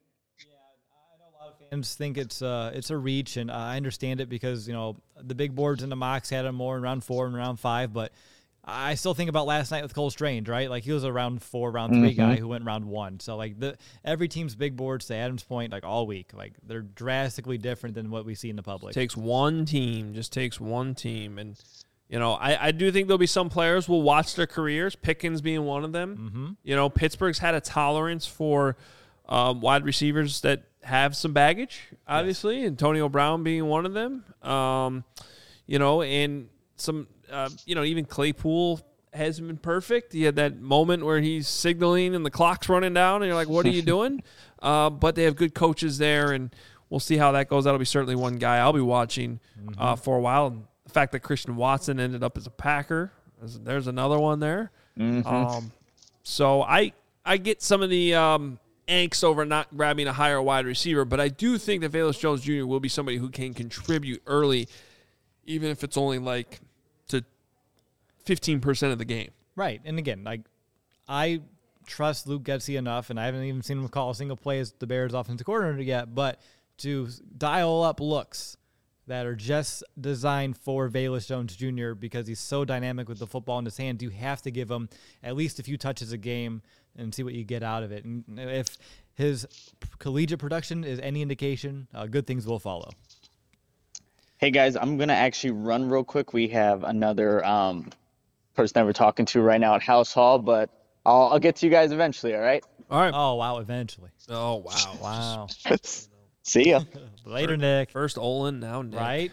Fans think it's uh it's a reach, and uh, I understand it because you know the big boards and the mocks had him more in round four and round five, but I still think about last night with Cole Strange, right? Like he was a round four, round three mm-hmm. guy who went round one. So like the every team's big boards to Adam's point, like all week, like they're drastically different than what we see in the public. It takes one team, just takes one team, and you know I I do think there'll be some players will watch their careers. Pickens being one of them. Mm-hmm. You know Pittsburgh's had a tolerance for um, wide receivers that have some baggage, obviously. Yes. Antonio Brown being one of them. Um, you know, and some, uh, you know, even Claypool hasn't been perfect. He had that moment where he's signaling and the clock's running down, and you're like, what are you doing? uh, but they have good coaches there, and we'll see how that goes. That'll be certainly one guy I'll be watching mm-hmm. uh, for a while. And the fact that Christian Watson ended up as a Packer, there's another one there. Mm-hmm. Um, so I, I get some of the um, – angst over not grabbing a higher wide receiver, but I do think that Velus Jones Junior will be somebody who can contribute early, even if it's only like to fifteen percent of the game. Right. And again, like I trust Luke Getsy enough, and I haven't even seen him call a single play as the Bears offensive coordinator yet, but to dial up looks that are just designed for Velus Jones Junior because he's so dynamic with the football in his hand, you have to give him at least a few touches a game and see what you get out of it. And if his collegiate production is any indication, uh, good things will follow. Hey, guys, I'm going to actually run real quick. We have another um, person that we're talking to right now at House Hall, but I'll, I'll get to you guys eventually, all right? All right. Oh, wow, eventually. Oh, wow. Wow. See ya. Later, Nick. First Olin, now Nick. Right?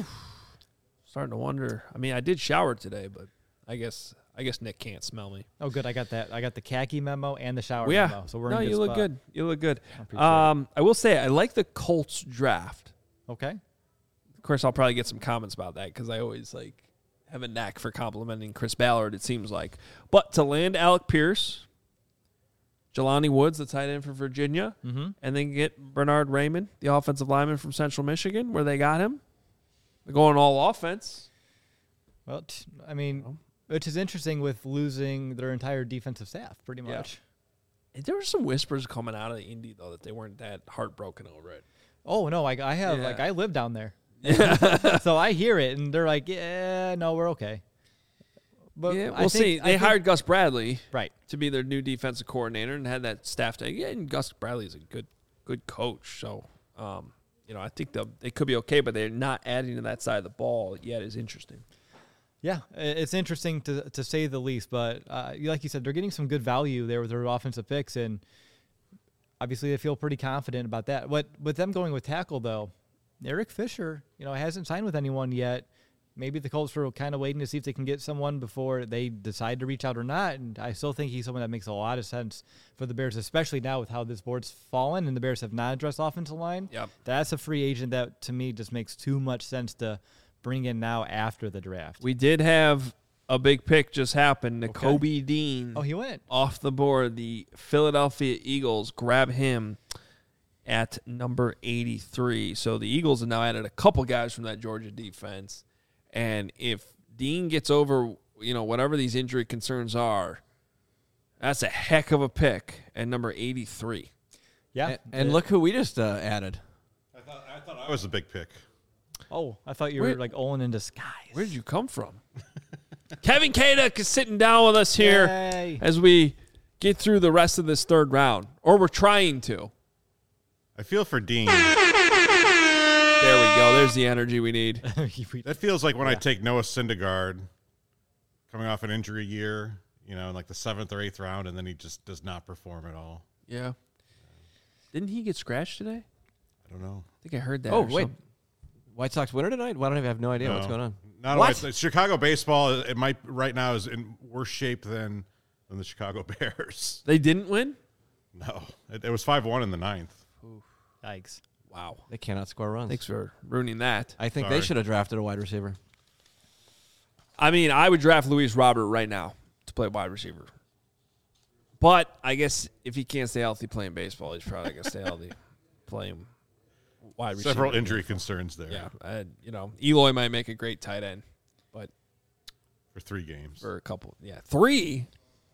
Starting to wonder. I mean, I did shower today, but I guess I guess Nick can't smell me. Oh, good. I got that. I got the khaki memo and the shower well, yeah. memo. So we're no, in good you look spot. good. You look good. Um, I will say I like the Colts draft. Okay. Of course, I'll probably get some comments about that because I always like have a knack for complimenting Chris Ballard, it seems like. But to land Alec Pierce, Jelani Woods, the tight end for Virginia, mm-hmm. and then get Bernard Raymond, the offensive lineman from Central Michigan, where they got him. They're going all offense. Well, t- I mean, which is interesting with losing their entire defensive staff, pretty much. Yeah. There were some whispers coming out of the Indy, though, that they weren't that heartbroken over it. Oh, no, like I have, yeah. like I live down there. Yeah. So I hear it, and they're like, yeah, no, we're okay. But yeah, we'll I think, see. They I hired think, Gus Bradley right. to be their new defensive coordinator and had that staff to, yeah, and Gus Bradley is a good good coach. So, um, you know, I think they could be okay, but they're not adding to that side of the ball yet is interesting. Yeah, it's interesting to to say the least. But uh, like you said, they're getting some good value there with their offensive picks, and obviously they feel pretty confident about that. What with them going with tackle, though, Eric Fisher, you know, hasn't signed with anyone yet. Maybe the Colts were kind of waiting to see if they can get someone before they decide to reach out or not. And I still think he's someone that makes a lot of sense for the Bears, especially now with how this board's fallen and the Bears have not addressed offensive line. Yep. That's a free agent that, to me, just makes too much sense to bring in now after the draft. We did have a big pick just happen. Nakobe Okay. Dean. Oh, he went. Off the board. The Philadelphia Eagles grab him at number eighty-three. So the Eagles have now added a couple guys from that Georgia defense. And if Dean gets over, you know, whatever these injury concerns are, that's a heck of a pick at number eighty-three. Yeah. And, and look who we just uh, added. I thought I thought I was a big pick. Oh, I thought you Where- were like Olin in disguise. Where did you come from? Kevin Kaduk is sitting down with us here Yay. as we get through the rest of this third round. Or we're trying to. I feel for Dean. There we go. There's the energy we need. That feels like when I Yeah. take Noah Syndergaard coming off an injury year, you know, in like the seventh or eighth round, and then he just does not perform at all. Yeah. Didn't he get scratched today? I don't know. I think I heard that. Oh, or wait. something. White Sox winner tonight? Well, I don't even have no idea No. what's going on. Not What? only Chicago baseball, it might right now is in worse shape than than the Chicago Bears. They didn't win? No, it, it was five one in the ninth. Yikes. Wow. They cannot score runs. Thanks for ruining that. I think Sorry. they should have drafted a wide receiver. I mean, I would draft Luis Robert right now to play wide receiver. But I guess if he can't stay healthy playing baseball, he's probably going to stay healthy playing wide receiver. Several injury concerns there. Yeah. I, you know, Eloy might make a great tight end, but for three games. for a couple. Yeah. Three?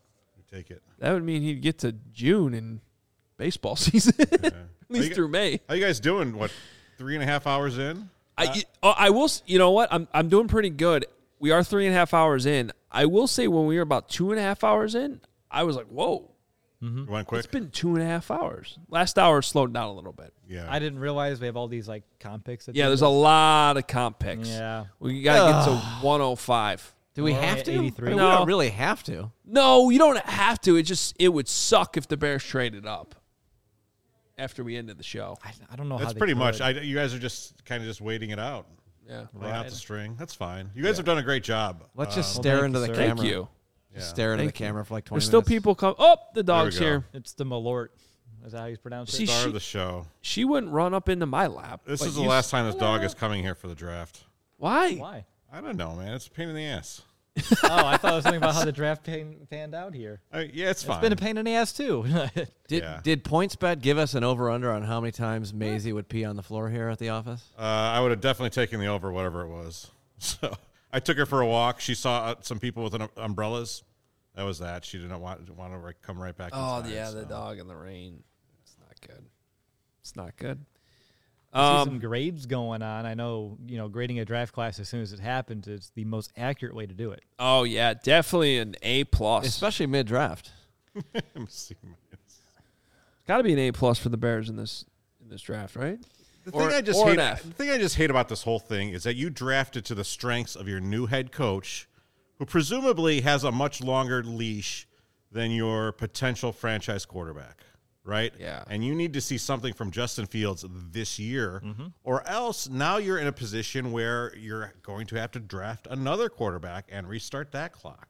take it. That would mean he'd get to June in baseball season, Yeah. at least you, through May. How you guys doing? What, three and a half hours in? I, Uh, oh, I will. You know what? I'm I'm doing pretty good. We are three and a half hours in. I will say when we were about two and a half hours in, I was like, "Whoa, You went quick? it's been two and a half hours." Last hour slowed down a little bit. Yeah. I didn't realize we have all these like comp picks. At Yeah, the there's end a of lot of comp picks. Yeah. We got to get to one oh five. Do we We're have only to? at eighty-three. I mean, No. We don't really have to. No, you don't have to. It just it would suck if the Bears traded up after we ended the show. I, I don't know how That's they pretty could. much. I, you guys are just kind of just waiting it out. Yeah. Laying out Right. the string. That's fine. You guys have done a great job. Let's Uh, just well, stare thank into you, the sir. camera. Thank you. Just Yeah. stare into Thank the you. camera for like twenty There's still minutes. people come. Oh, the dog's go. here. It's the Malort. Is that how you pronounce See, it? Star she- of the show. She wouldn't run up into my lap. This but is the you- last time this dog is coming here for the draft. Why? Why? I don't know, man. It's a pain in the ass. Oh, I thought it was something about how the draft pan, panned out here. I, yeah, it's fine. It's been a pain in the ass too. Did Yeah. did PointsBet give us an over under on how many times Maisie would pee on the floor here at the office? Uh, I would have definitely taken the over, whatever it was. So I took her for a walk. She saw uh, some people with an, umbrellas. That was that. She didn't want, want to right, come right back. Oh inside, yeah, so. the dog in the rain. It's not good. It's not good. I see Um, some grades going on. I know, you know, grading a draft class as soon as it happens is the most accurate way to do it. oh yeah, definitely an A plus. Especially mid draft. I'm seeing this. Got to be an A plus for the Bears in this in this draft, right? The Or- thing I just or an hate, F. the thing I just hate about this whole thing is that you drafted to the strengths of your new head coach, who presumably has a much longer leash than your potential franchise quarterback, right? Yeah. And you need to see something from Justin Fields this year, or else now you're in a position where you're going to have to draft another quarterback and restart that clock.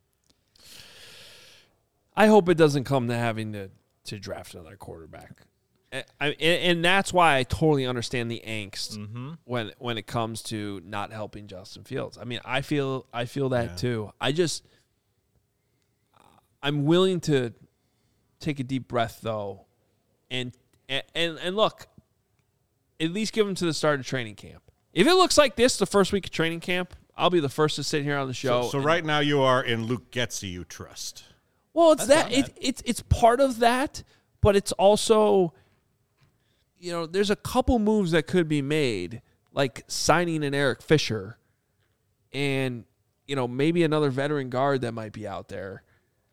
I hope it doesn't come to having to to draft another quarterback. And, I, and, and that's why I totally understand the angst when when it comes to not helping Justin Fields. I mean, I feel I feel that Yeah. too. I just I'm willing to take a deep breath though, and and and look, at least give him to the start of training camp. If it looks like this the first week of training camp, I'll be the first to sit here on the show. So, so and- right now you are in Luke Getsy, you trust. Well, it's That's that not it, it's it's part of that, but it's also, you know, there's a couple moves that could be made, like signing an Eric Fisher, and you know maybe another veteran guard that might be out there,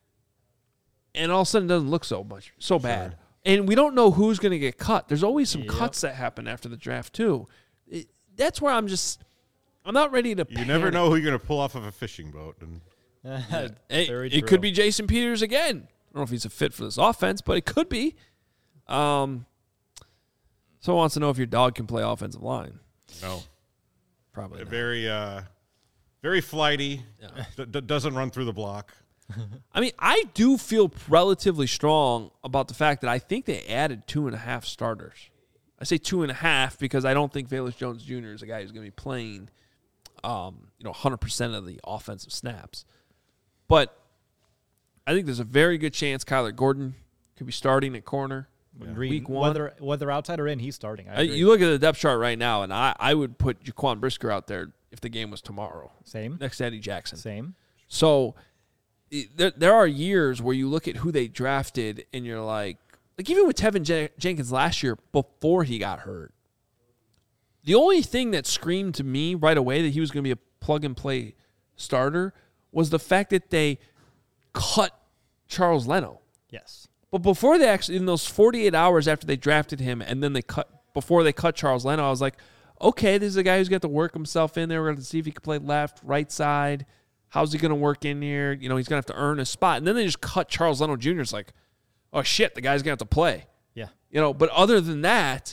and all of a sudden it doesn't look so much so bad, and we don't know who's going to get cut. There's always some Yep. cuts that happen after the draft too. It, that's where I'm just, I'm not ready to. You never panic. know who you're going to pull off of a fishing boat. And Hey, Very it true. could be Jason Peters again. I don't know if he's a fit for this offense, but it could be. Um, someone wants to know if your dog can play offensive line. no, Probably not. very, uh, very flighty. D- d- doesn't run through the block. I mean, I do feel relatively strong about the fact that I think they added two and a half starters. I say two and a half because I don't think Velus Jones Junior is a guy who's going to be playing, um, you know, one hundred percent of the offensive snaps. But I think there's a very good chance Kyler Gordon could be starting at corner. Agreed. Week one. Whether whether outside or in, he's starting. I Uh, agree. you look at the depth chart right now, and I, I would put Jaquan Brisker out there if the game was tomorrow Same. next to Eddie Jackson. Same. So it- there, there are years where you look at who they drafted, and you're like, like even with Tevin Jen- Jenkins last year before he got hurt, the only thing that screamed to me right away that he was going to be a plug and play starter was the fact that they cut Charles Leno. Yes. But before they actually, in those forty-eight hours after they drafted him, and then they cut, before they cut Charles Leno, I was like, okay, this is a guy who's got to work himself in there. We're going to see if he can play left, right side. How's he going to work in here? You know, he's going to have to earn a spot. And then they just cut Charles Leno Junior It's like, oh, shit, the guy's going to have to play. Yeah. You know, but other than that,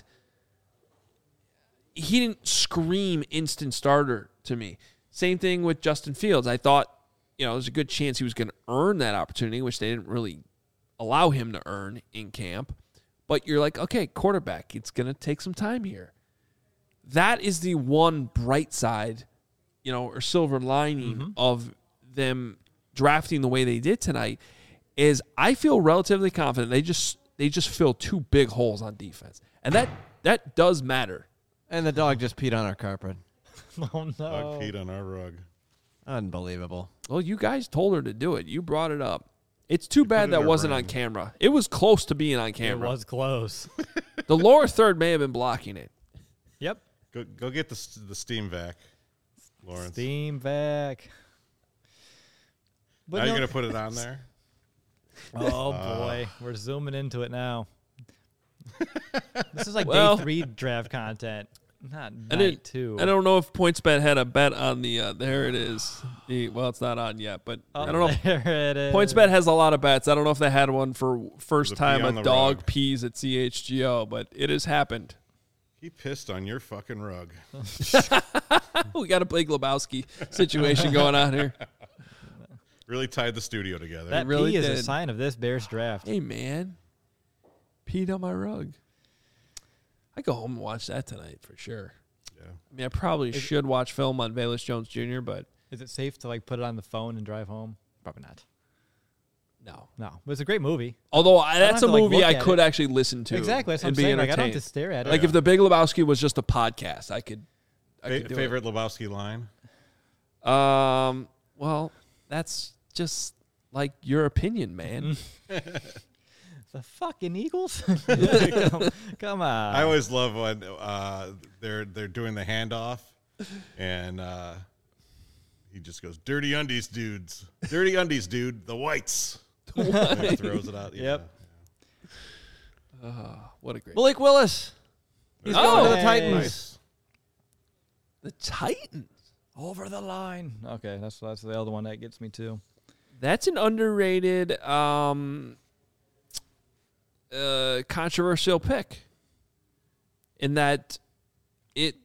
he didn't scream instant starter to me. Same thing with Justin Fields. I thought, you know, there's a good chance he was going to earn that opportunity, which they didn't really allow him to earn in camp. But you're like, okay, quarterback, it's going to take some time here. That is the one bright side, you know, or silver lining Mm-hmm. of them drafting the way they did tonight is I feel relatively confident they just they just fill two big holes on defense. And that that does matter. And the dog just peed on our carpet. Oh no. Dog peed on our rug. Unbelievable. Well, you guys told her to do it. You brought it up. It's too You bad put it that in a wasn't ring. on camera. It was close to being on camera. It was close. The lower third may have been blocking it. Yep. Go go get the the steam vac, Lawrence. Steam vac. But Are you no- gonna put it on there? Oh boy, we're zooming into it now. This is like Well- day three draft content, not I night didn't- two. I don't know if PointsBet had a bet on the. Uh, there it is. The, well, it's not on yet, but Oh, I don't know. If, there it is. PointsBet has a lot of bets. I don't know if they had one for first The pee time on a the dog rug. pees at C H G O, but it has happened. He pissed on your fucking rug. We got a Blake Lebowski situation going on here. Really tied the studio together. That really pee is a did. sign of this Bears draft. Hey man, peed on my rug. I go home and watch that tonight for sure. yeah. I mean, I probably Is it- should watch film on Bayless Jones Junior, but Is it safe to like put it on the phone and drive home? Probably not. no. No, but it's a great movie. Although I, don't that's have a to, like, movie look I at could it. actually listen to. Exactly. That's what I'm and be saying. Like, I don't have entertained. to stare at it. Like if The Big Lebowski was just a podcast, I could. I Fa- could do favorite Lebowski line? it. Um. Well, that's just like your opinion, man. The fucking Eagles? come, come on. I always love when uh, they're they're doing the handoff, and uh, he just goes, "Dirty undies, dudes. Dirty undies, dude. The whites." And he throws it out. Yeah. Yep. Oh, what a great. Malik Willis. He's Oh, going to the hey. Titans. Nice. The Titans. Over the line. Okay, that's that's the other one that gets me too. That's an underrated, um, uh, controversial pick. In that, it,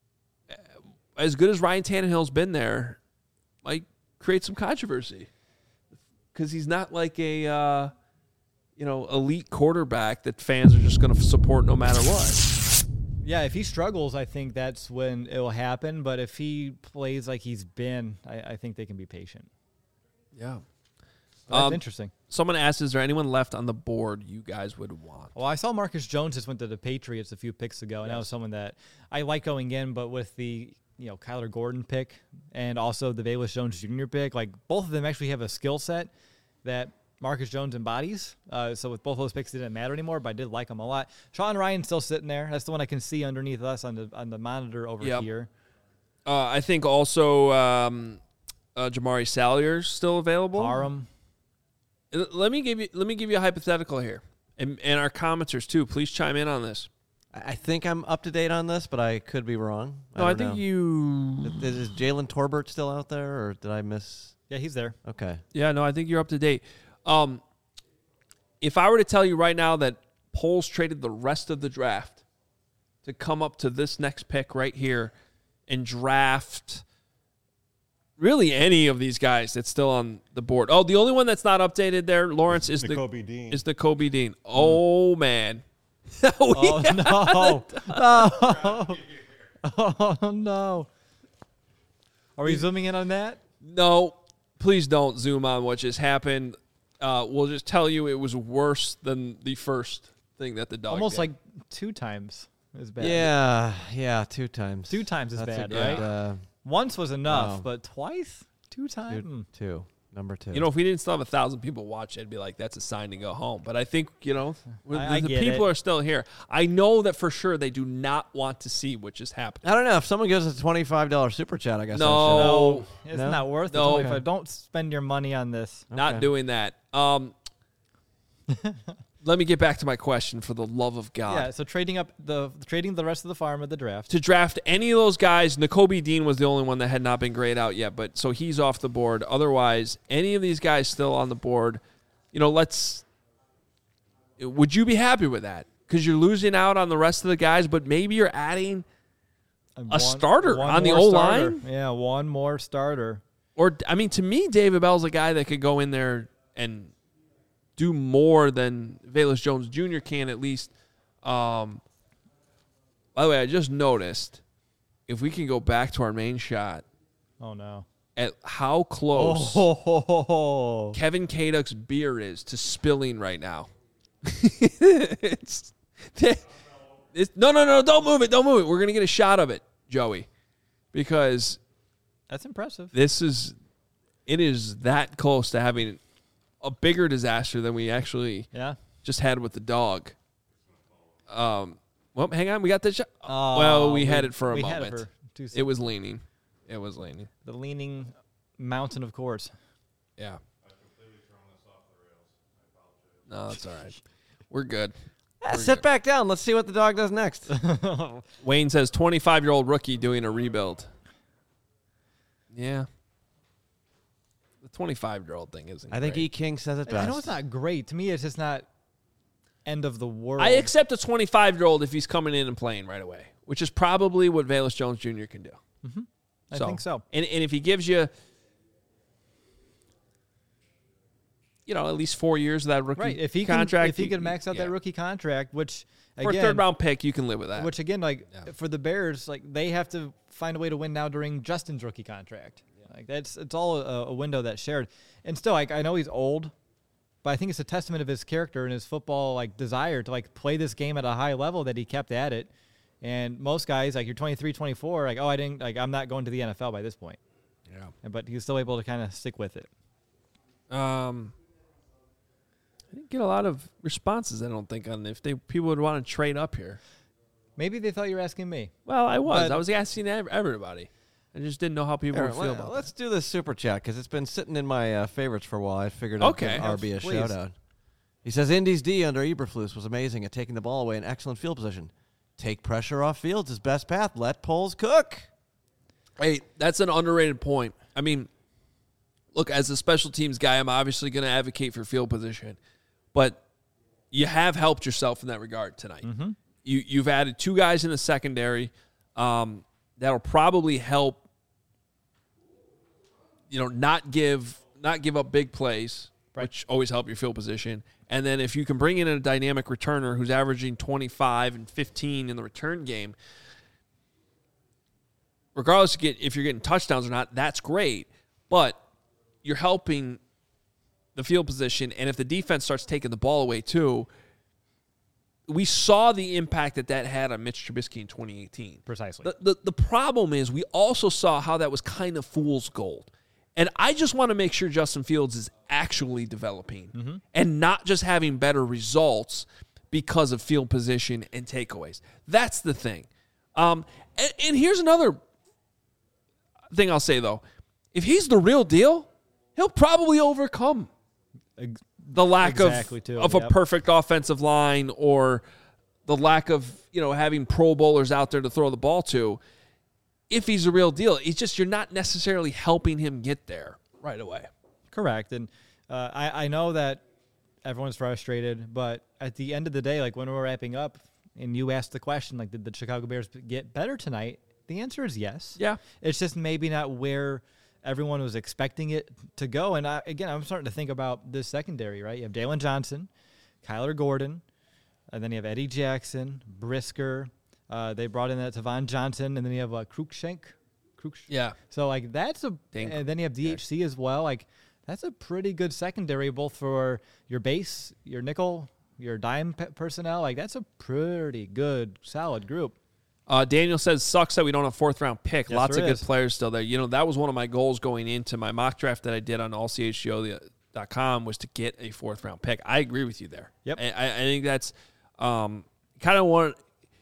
as good as Ryan Tannehill's been there, might create some controversy because he's not like a, uh, you know, elite quarterback that fans are just going to support no matter what. Yeah, if he struggles, I think that's when it will happen. But if he plays like he's been, I, I think they can be patient. Yeah. That's Um, interesting. Someone asked, is there anyone left on the board you guys would want? Well, I saw Marcus Jones just went to the Patriots a few picks ago, and that was someone that I like going in. But with the you know Kyler Gordon pick and also the Bayless Jones Junior pick, like both of them actually have a skill set that Marcus Jones embodies. Uh, so with both those picks, it didn't matter anymore. But I did like them a lot. Sean Ryan's still sitting there. That's the one I can see underneath us on the on the monitor over Yep. here. Uh, I think also um, uh, Jamari Salyer's still available. Parham. Uh, Let me give you let me give you a hypothetical here, and and our commenters too. Please chime in on this. I I think I'm up to date on this, but I could be wrong. No, I, don't think know. you. Is, is Jalen Torbert still out there, or did I miss? Yeah, he's there. Okay. Yeah, no, I think you're up to date. Um, if I were to tell you right now that Poles traded the rest of the draft to come up to this next pick right here and draft really any of these guys that's still on the board. Oh, the only one that's not updated there, Lawrence, is the Nakobe Dean. is the Kobe Dean. Oh man. We- Oh no! No! Oh no! Are we zooming in on that? No, please don't zoom on what just happened. Uh, we'll just tell you it was worse than the first thing that the dog Almost did. like two times as bad. Yeah, yeah, two times. Two times as That's bad, a right? good, uh, Once was enough, Wow. but twice? Two times? two, two, number two. You know, if we didn't still have a thousand people watch it, I'd be like, that's a sign to go home. But I think, you know, the, I- I the get people it. are still here. I know that for sure they do not want to see what just happened. I don't know if someone gives us a twenty-five dollar super chat. I guess I No. should. Oh. It's No? not worth No. it. If don't spend your money on this. Not Okay. doing that. Um, let me get back to my question for the love of God. Yeah, so trading up the trading the rest of the farm of the draft. To draft any of those guys, Nakobe Dean was the only one that had not been grayed out yet, but so he's off the board. Otherwise, any of these guys still on the board, you know, let's would you be happy with that? Because you're losing out on the rest of the guys, but maybe you're adding And a starter on the more O-line? starter. Yeah, one more starter. or I mean, to me, David Bell's a guy that could go in there and do more than Velus Jones Junior can at least. Um, by the way, I just noticed if we can go back to our main shot Oh no. at how close Oh, Kevin Kaduk's beer is to spilling right now. it's, it's no, no, no! Don't move it! Don't move it! We're gonna get a shot of it, Joey, because that's impressive. this is it is that close to having a bigger disaster than we actually yeah. just had with the dog. Um, well, hang on, we got the shot. Oh, well, we, we had it for a we moment. Had it, for two it was leaning. It was leaning. The leaning mountain of course. Yeah. No, that's all right. We're good. Yeah, We're sit good. back down. Let's see what the dog does next. Wayne says twenty-five-year-old rookie doing a rebuild. Yeah. The twenty-five-year-old thing isn't I think great. E. King says it best. I know it's not great. To me, it's just not end of the world. I accept a twenty-five-year-old if he's coming in and playing right away, which is probably what Velus Jones Junior can do. Mm-hmm. I so, think so. And, and if he gives you, you know, at least four years of that rookie Right. If he contract. can, if he could max out yeah. that rookie contract, which For again, a third-round pick, you can live with that. Which again, like Yeah. for the Bears, like they have to find a way to win now during Justin's rookie contract. Yeah. Like that's it's all a, a window that's shared. And still, like I know he's old, but I think it's a testament of his character and his football like desire to like play this game at a high level that he kept at it. And most guys, like you're twenty-three, twenty-four, like oh I didn't like I'm not going to the N F L by this point. Yeah. But he's still able to kind of stick with it. Um, I didn't get a lot of responses. I don't think on if they people would want to trade up here. Maybe they thought you were asking me. Well, I was. But- I was asking ev- everybody. I just didn't know how people Here, would feel let, about let's do this super chat because it's been sitting in my uh, favorites for a while. I figured Okay. I'd give R B a Please. shout out. He says Indy's D under Eberflus was amazing at taking the ball away in excellent field position. Take pressure off Fields, his best path. Let Poles cook. that. Hey, that's an underrated point. I mean, look, as a special teams guy, I'm obviously going to advocate for field position, but you have helped yourself in that regard tonight. Mm-hmm. You you've added two guys in the secondary um, that'll probably help. You know, not give not give up big plays, Right. which always help your field position. And then if you can bring in a dynamic returner who's averaging twenty-five and fifteen in the return game, regardless of get, if you're getting touchdowns or not, that's great. But you're helping the field position, and if the defense starts taking the ball away too, we saw the impact that that had on Mitch Trubisky in twenty eighteen. Precisely. The, the, the problem is we also saw how that was kind of fool's gold. And I just want to make sure Justin Fields is actually developing Mm-hmm. and not just having better results because of field position and takeaways. That's the thing. Um, and, and here's another thing I'll say, though. If he's the real deal, he'll probably overcome Ex- the lack Exactly, of, too, of yep. a perfect offensive line or the lack of, you know, having Pro Bowlers out there to throw the ball to. If he's a real deal, it's just you're not necessarily helping him get there right away. Correct. And uh, I, I know that everyone's frustrated, but at the end of the day, like when we're wrapping up and you asked the question, like, did the Chicago Bears get better tonight? The answer is yes. Yeah. It's just maybe not where everyone was expecting it to go. And I, again, I'm starting to think about this secondary, right? You have Dalen Johnson, Kyler Gordon, and then you have Eddie Jackson, Brisker. Uh, they brought in that Tavon Johnson, and then you have uh, Cruikshank. Cruikshank. Yeah. So, like, that's a Dink. and then you have D H C as well. Like, that's a pretty good secondary, both for your base, your nickel, your dime pe- personnel. Like, that's a pretty good, solid group. Uh, Daniel says, sucks that we don't have fourth round pick. Yes, Lots of there good is. players still there. You know, that was one of my goals going into my mock draft that I did on all c h g o dot com was to get a fourth round pick. I agree with you there. Yep. I, I I think that's um, kind of one.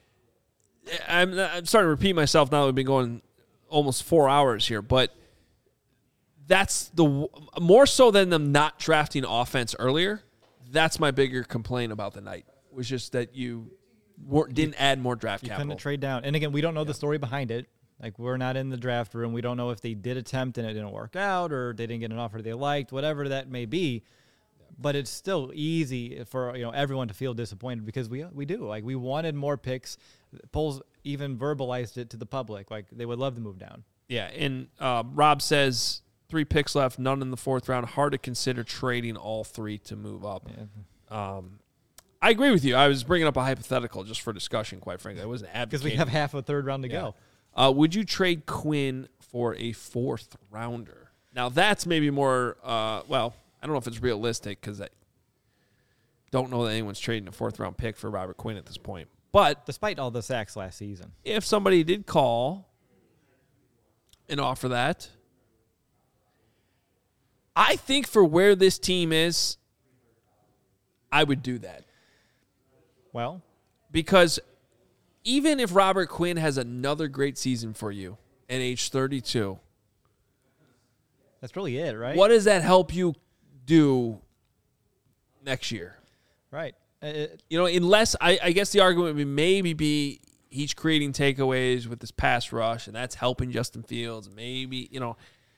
I'm, I'm starting to repeat myself now that we've been going almost four hours here, but that's the more so than them not drafting offense earlier. That's my bigger complaint about the night was just that you weren't, didn't add more draft You capital. couldn't trade down. And again, we don't know the story behind it. Like, we're not in the draft room. We don't know if they did attempt and it didn't work out or they didn't get an offer they liked, whatever that may be. But it's still easy for, you know, everyone to feel disappointed because we we do. Like, we wanted more picks. Polls even verbalized it to the public. Like, they would love to move down. Yeah, and uh, Rob says three picks left, none in the fourth round. Hard to consider trading all three to move up. Yeah. Um, I agree with you. I was bringing up a hypothetical just for discussion, quite frankly. I wasn't Because advocating. we have half a third round to Yeah. go. Uh, would you trade Quinn for a fourth rounder? Now, that's maybe more, uh, well, I don't know if it's realistic because I don't know that anyone's trading a fourth round pick for Robert Quinn at this point. But Despite all the sacks last season. if somebody did call and offer that, I think for where this team is, I would do that. Well, because even if Robert Quinn has another great season for you at age thirty-two, that's really it, right? What does that help you do next year? Right. It, you know, unless I, I guess the argument would maybe be he's creating takeaways with this pass rush, and that's helping Justin Fields. Maybe, you know.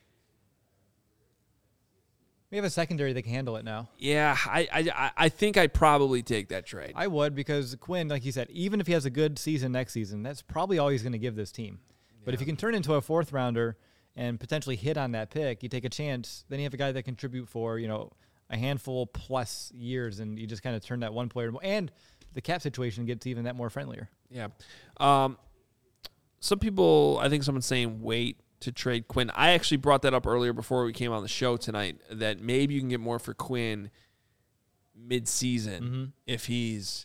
We have a secondary that can handle it now. Yeah, I, I I think I'd probably take that trade. I would, because Quinn, like you said, even if he has a good season next season, that's probably all he's going to give this team. Yeah. But if you can turn into a fourth rounder and potentially hit on that pick, you take a chance, then you have a guy that can contribute for, you know, a handful plus years, and you just kind of turn that one player. And the cap situation gets even that more friendlier. Yeah. Um, some people, I think someone's saying wait to trade Quinn. I actually brought that up earlier before we came on the show tonight, that maybe you can get more for Quinn mid-season mm-hmm. if he's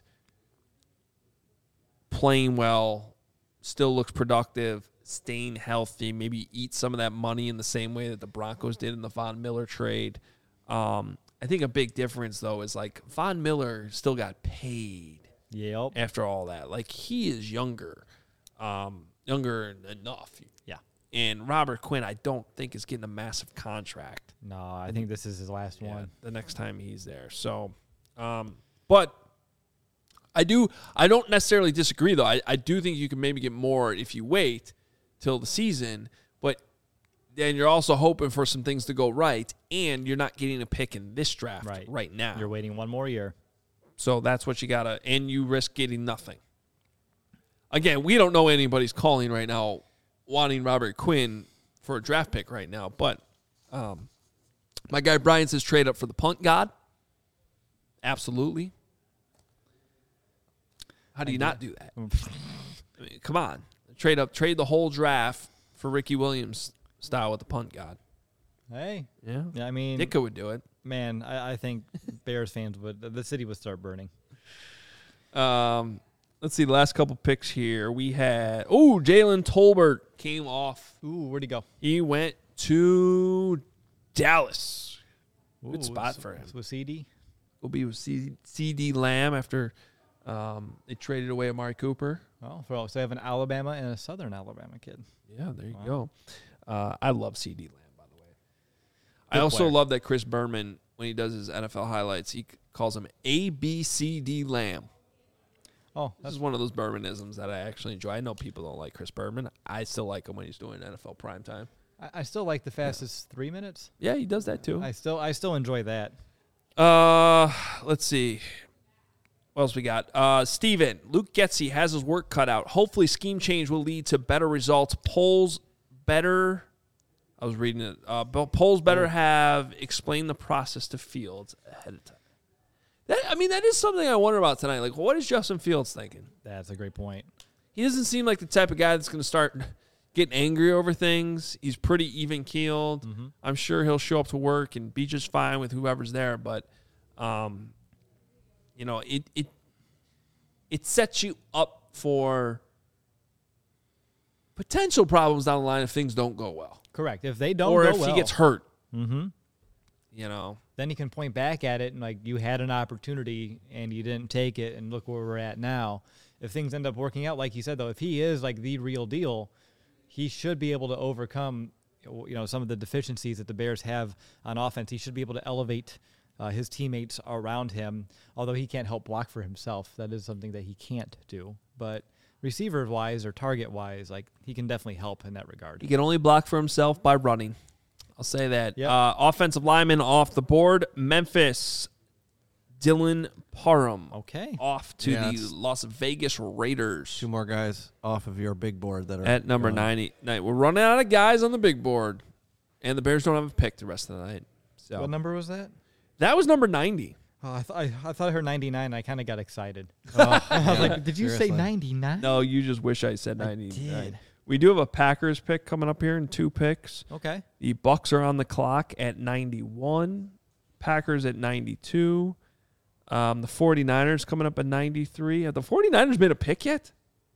playing well, still looks productive, staying healthy, maybe eat some of that money in the same way that the Broncos did in the Von Miller trade. Um, I think a big difference, though, is like Von Miller still got paid yep. after all that. Like, he is younger, um, younger enough. Yeah. And Robert Quinn, I don't think, is getting a massive contract. No, I think this is his last yeah, one. The next time he's there. So, um, but I do, I don't necessarily disagree, though. I, I do think you can maybe get more if you wait till the season, but then you're also hoping for some things to go right, and you're not getting a pick in this draft right, right now. You're waiting one more year. So that's what you got to, and you risk getting nothing. Again, we don't know anybody's calling right now wanting Robert Quinn for a draft pick right now, but um, my guy Brian says trade up for the punt god. Absolutely. How do you not do that? I mean, come on. Trade up, trade the whole draft for Ricky Williams style with the punt god. Hey. Yeah. Yeah, I mean, Ditka would do it. Man, I, I think Bears fans would. The city would start burning. Um, let's see the last couple picks here. We had oh Jalen Tolbert came off. Ooh, where'd he go? He went to Dallas. Ooh, Good spot for him. With C D. Will be with C D Lamb after um, they traded away Amari Cooper. Oh, so they have an Alabama and a Southern Alabama kid. Yeah, there you wow. go. Uh, I love C D Lamb, by the way. Good I also player. love that Chris Berman, when he does his N F L highlights, he calls him A B C D Lamb. Oh, this is one of those Bermanisms that I actually enjoy. I know people don't like Chris Berman. I still like him when he's doing N F L primetime. I, I still like the fastest yeah. three minutes. Yeah, he does that too. I still I still enjoy that. Uh, let's see. What else we got? Uh, Steven, Luke Getsy has his work cut out. Hopefully scheme change will lead to better results. Polls better. I was reading it. Uh, polls better have explained the process to Fields ahead of time. That, I mean, that is something I wonder about tonight. Like, what is Justin Fields thinking? That's a great point. He doesn't seem like the type of guy that's going to start getting angry over things. He's pretty even-keeled. Mm-hmm. I'm sure he'll show up to work and be just fine with whoever's there. But, um, you know, it it it sets you up for potential problems down the line if things don't go well. Correct. If they don't or go if well, he gets hurt. Mm-hmm. You know. Then you can point back at it and, like, you had an opportunity and you didn't take it, and look where we're at now. If things end up working out, like you said, though, if he is, like, the real deal, he should be able to overcome, you know, some of the deficiencies that the Bears have on offense. He should be able to elevate uh, his teammates around him, although he can't help block for himself. That is something that he can't do. But receiver-wise or target-wise, like, he can definitely help in that regard. He can only block for himself by running. I'll say that. Yep. Uh, offensive lineman off the board. Memphis, Dylan Parham. Okay. Off to yeah, the Las Vegas Raiders. Two more guys off of your big board that are at number ninety. Night. We're running out of guys on the big board, and the Bears don't have a pick the rest of the night. So what number was that? That was number ninety. Oh, I, th- I, I thought I heard ninety-nine. I kind of got excited. Oh, I was like, did you seriously. say ninety-nine? No, you just wish I said I ninety-nine. did. We do have a Packers pick coming up here in two picks. Okay. The Bucks are on the clock at ninety-one. Packers at ninety-two. Um, the 49ers coming up at ninety-three. Have the 49ers made a pick yet?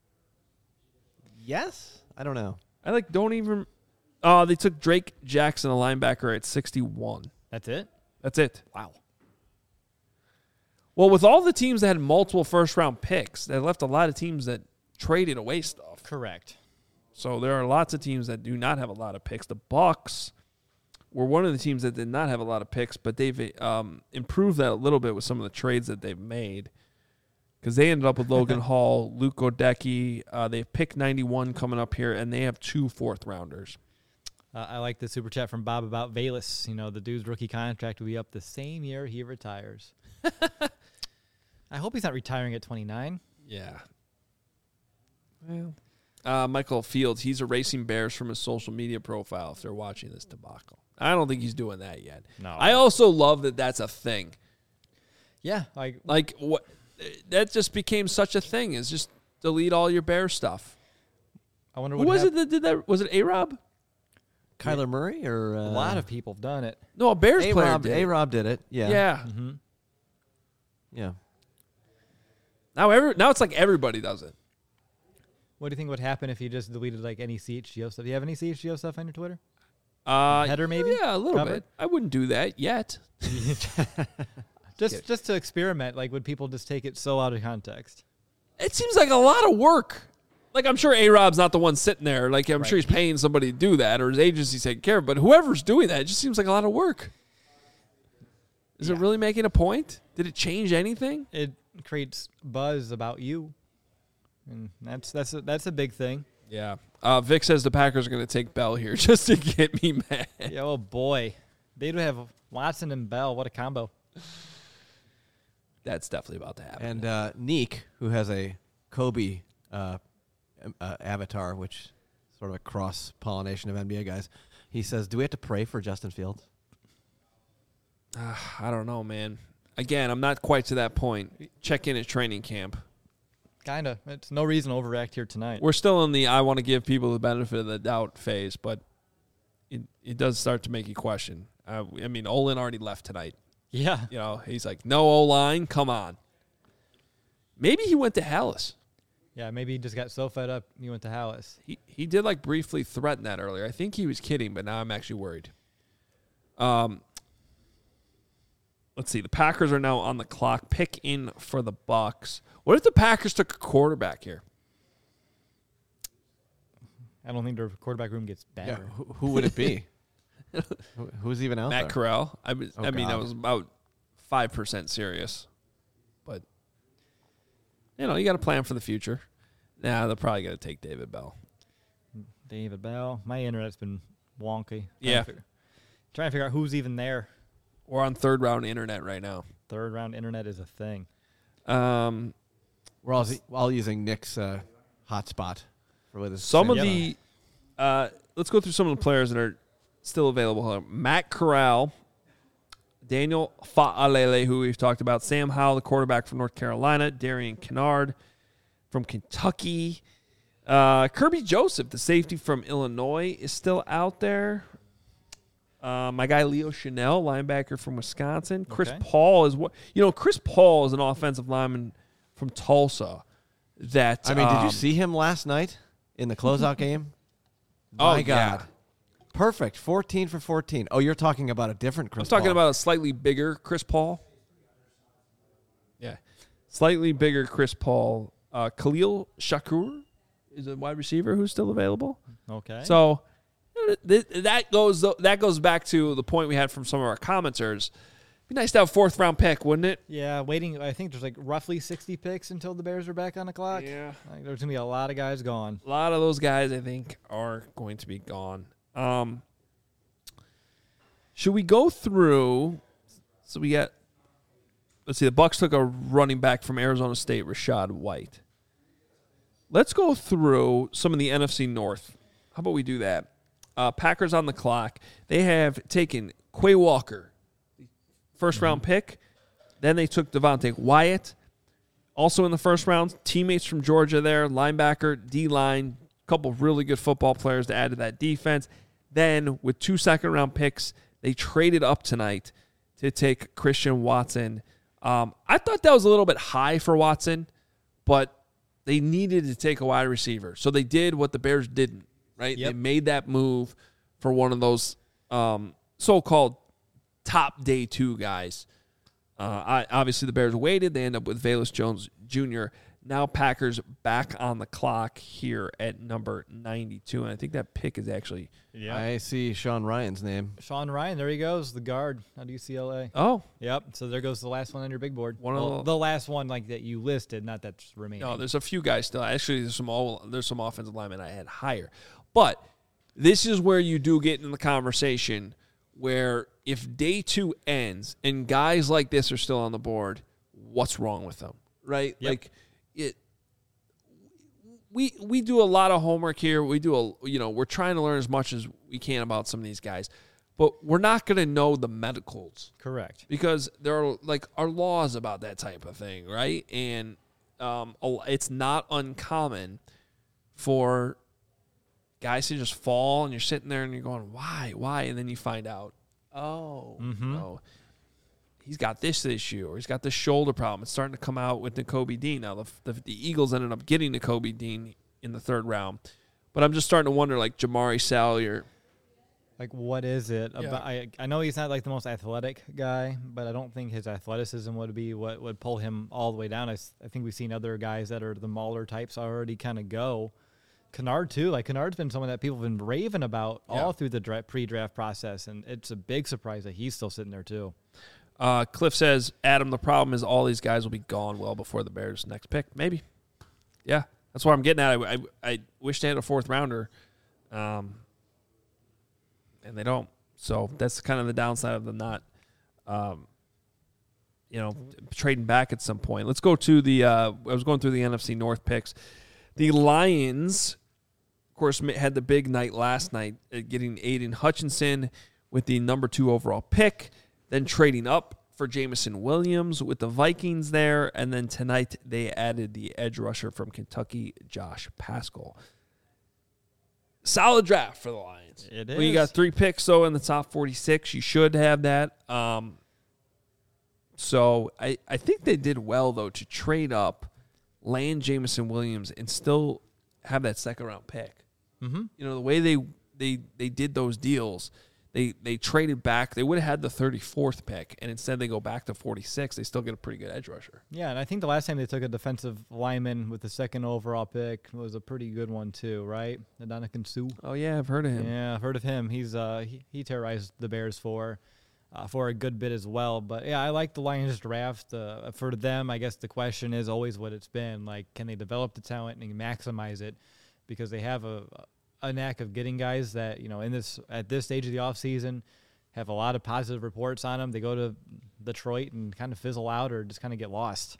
Yes? I don't know. I like don't even. Oh, they took Drake Jackson, a linebacker, at sixty-one. That's it? That's it. Wow. Well, with all the teams that had multiple first-round picks, they left a lot of teams that traded away stuff. Correct. So there are lots of teams that do not have a lot of picks. The Bucs were one of the teams that did not have a lot of picks, but they've um, improved that a little bit with some of the trades that they've made. Because they ended up with Logan Hall, Luke Godecki. Uh, they have pick ninety-one coming up here, and they have two fourth-rounders. Uh, I like the super chat from Bob about Valus. You know, the dude's rookie contract will be up the same year he retires. I hope he's not retiring at twenty-nine. Yeah. Well, uh, Michael Fields, he's erasing Bears from his social media profile if they're watching this debacle. I don't think he's doing that yet. No. I also love that that's a thing. Yeah. Like, Like, what? That just became such a thing, is just delete all your Bear stuff. I wonder Who what was hap- it that did that? Was it A-Rob? Kyler Murray or uh, A lot of people have done it. No, a Bears player A-Rob, did it. A-Rob did it. Yeah. Yeah. Mm-hmm. Yeah. Now, every, now it's like everybody does it. What do you think would happen if you just deleted like any C H G O stuff? Do you have any C H G O stuff on your Twitter? Uh, Header maybe? Yeah, a little Cover? bit. I wouldn't do that yet. Just just to experiment, like would people just take it so out of context? It seems like a lot of work. Like, I'm sure A-Rob's not the one sitting there. Like, I'm Right. sure he's paying somebody to do that, or his agency's taking care of it. But whoever's doing that, it just seems like a lot of work. Is Yeah. it really making a point? Did it change anything? It creates buzz about you, and that's that's a, that's a big thing. Yeah. Uh, Vic says the Packers are going to take Bell here just to get me mad. Yeah, oh boy, they do have Watson and Bell. What a combo! That's definitely about to happen. And uh, Neek, who has a Kobe uh, uh, avatar, which is sort of a cross-pollination of N B A guys, he says, do we have to pray for Justin Fields? Uh, I don't know, man. Again, I'm not quite to that point. Check in at training camp. Kinda. It's no reason to overreact here tonight. We're still in the I want to give people the benefit of the doubt phase, but it it does start to make you question. Uh, I mean, Olin already left tonight. Yeah. You know, he's like, no O-line, come on. Maybe he went to Hallis. Yeah, maybe he just got so fed up he went to Hallis. He he did like briefly threaten that earlier. I think he was kidding, but now I'm actually worried. Um, let's see. The Packers are now on the clock. Pick in for the Bucs. What if the Packers took a quarterback here? I don't think their quarterback room gets better. Yeah. Who, who would it be? Who, who's even out Matt there? Corral. I, was, Oh, I mean, I God. was about five percent serious. But, you know, you got to plan for the future. Nah, they're probably going to take David Bell. David Bell. My internet's been wonky. Trying Yeah. To figure, trying to figure out who's even there. We're on third round internet right now. Third round internet is a thing. Um, We're all, all using Nick's uh, hotspot. For with his some of Yeah. the uh, – let's go through some of the players that are still available. Matt Corral, Daniel Fa'alele, who we've talked about, Sam Howell, the quarterback from North Carolina, Darian Kennard from Kentucky, uh, Kirby Joseph, the safety from Illinois, is still out there. Uh, my guy Leo Chanel, linebacker from Wisconsin. Chris Okay. Paul is what you know. Chris Paul is an offensive lineman from Tulsa. That I mean, did um, you see him last night in the closeout game? Oh, My God. yeah. Perfect. fourteen for fourteen. Oh, you're talking about a different Chris I'm talking Paul. about a slightly bigger Chris Paul. Yeah, slightly bigger Chris Paul. Uh, Khalil Shakur is a wide receiver who's still available. Okay. So th- that goes that goes back to the point we had from some of our commenters. Be nice to have a fourth round pick, wouldn't it? yeah, waiting. I think there's like roughly sixty picks until the Bears are back on the clock. Yeah. Like, there's going to be a lot of guys gone. A lot of those guys, I think, are going to be gone. Um, should we go through? So we got. Let's see. The Bucs took a running back from Arizona State, Rashad White. Let's go through some of the N F C North. How about we do that? Uh, Packers on the clock. They have taken Quay Walker, first round pick. Then they took Devontae Wyatt, also in the first round. Teammates from Georgia there, linebacker, D-line, a couple of really good football players to add to that defense. Then with two second round picks, they traded up tonight to take Christian Watson. Um, I thought that was a little bit high for Watson, but they needed to take a wide receiver. So they did what the Bears didn't, right? Yep. They made that move for one of those um, so-called top day two guys. Uh, I, obviously, the Bears waited. They end up with Velus Jones Junior Now Packers back on the clock here at number ninety-two. And I think that pick is actually... Yeah, I see Sean Ryan's name. Sean Ryan, there he goes, the guard out of U C L A. Oh. Yep, so there goes the last one on your big board. One well, of the, the last one like that you listed, not that's remaining. No, there's a few guys still. Actually, there's some all, there's some offensive linemen I had higher. But this is where you do get in the conversation where if day two ends and guys like this are still on the board, what's wrong with them, right? Yep. Like it. We we do a lot of homework here. We do a you know we're trying to learn as much as we can about some of these guys, but we're not going to know the medicals. Correct. Because there are like are laws about that type of thing, right? And um, it's not uncommon for guys to just fall, and you're sitting there and you're going, why, why? And then you find out, oh, Mm-hmm. no, he's got this issue, or he's got this shoulder problem. It's starting to come out with Nakobe Dean. Now, the, the, the Eagles ended up getting Nakobe Dean in the third round. But I'm just starting to wonder, like, Jamari Salyer. Like, what is it Yeah. about? I, I know he's not like the most athletic guy, but I don't think his athleticism would be what would pull him all the way down. I, s- I think we've seen other guys that are the Mauler types already kind of go. Kennard, too. Like, Kennard's been someone that people have been raving about Yeah. all through the dra- pre-draft process, and it's a big surprise that he's still sitting there, too. Uh, Cliff says, Adam, the problem is all these guys will be gone well before the Bears' next pick. Maybe. Yeah, that's what I'm getting at. I, I, I wish they had a fourth rounder, um, and they don't. So that's kind of the downside of them not, um, you know, trading back at some point. Let's go to the uh, – I was going through the N F C North picks. The Lions, of course, had the big night last night, uh, getting Aiden Hutchinson with the number two overall pick, then trading up for Jameson Williams with the Vikings there, and then tonight they added the edge rusher from Kentucky, Josh Pascal. Solid draft for the Lions. It Well, you is. got three picks, though, in the top forty-six. You should have that. Um, so I, I think they did well, though, to trade up, land Jameson Williams, and still have that second-round pick. Mm-hmm. You know, the way they they they did those deals, they they traded back. They would have had the thirty-fourth pick, and instead they go back to forty-six. They still get a pretty good edge rusher. Yeah, and I think the last time they took a defensive lineman with the second overall pick was a pretty good one, too, right? Ndamukong Suh. Oh, yeah, I've heard of him. Yeah, I've heard of him. He's uh he, he terrorized the Bears for uh, for a good bit as well. But yeah, I like the Lions draft. Uh, for them, I guess the question is always what it's been. Like, can they develop the talent and maximize it? Because they have a a knack of getting guys that, you know, in this at this stage of the offseason have a lot of positive reports on them. They go to Detroit and kind of fizzle out or just kind of get lost.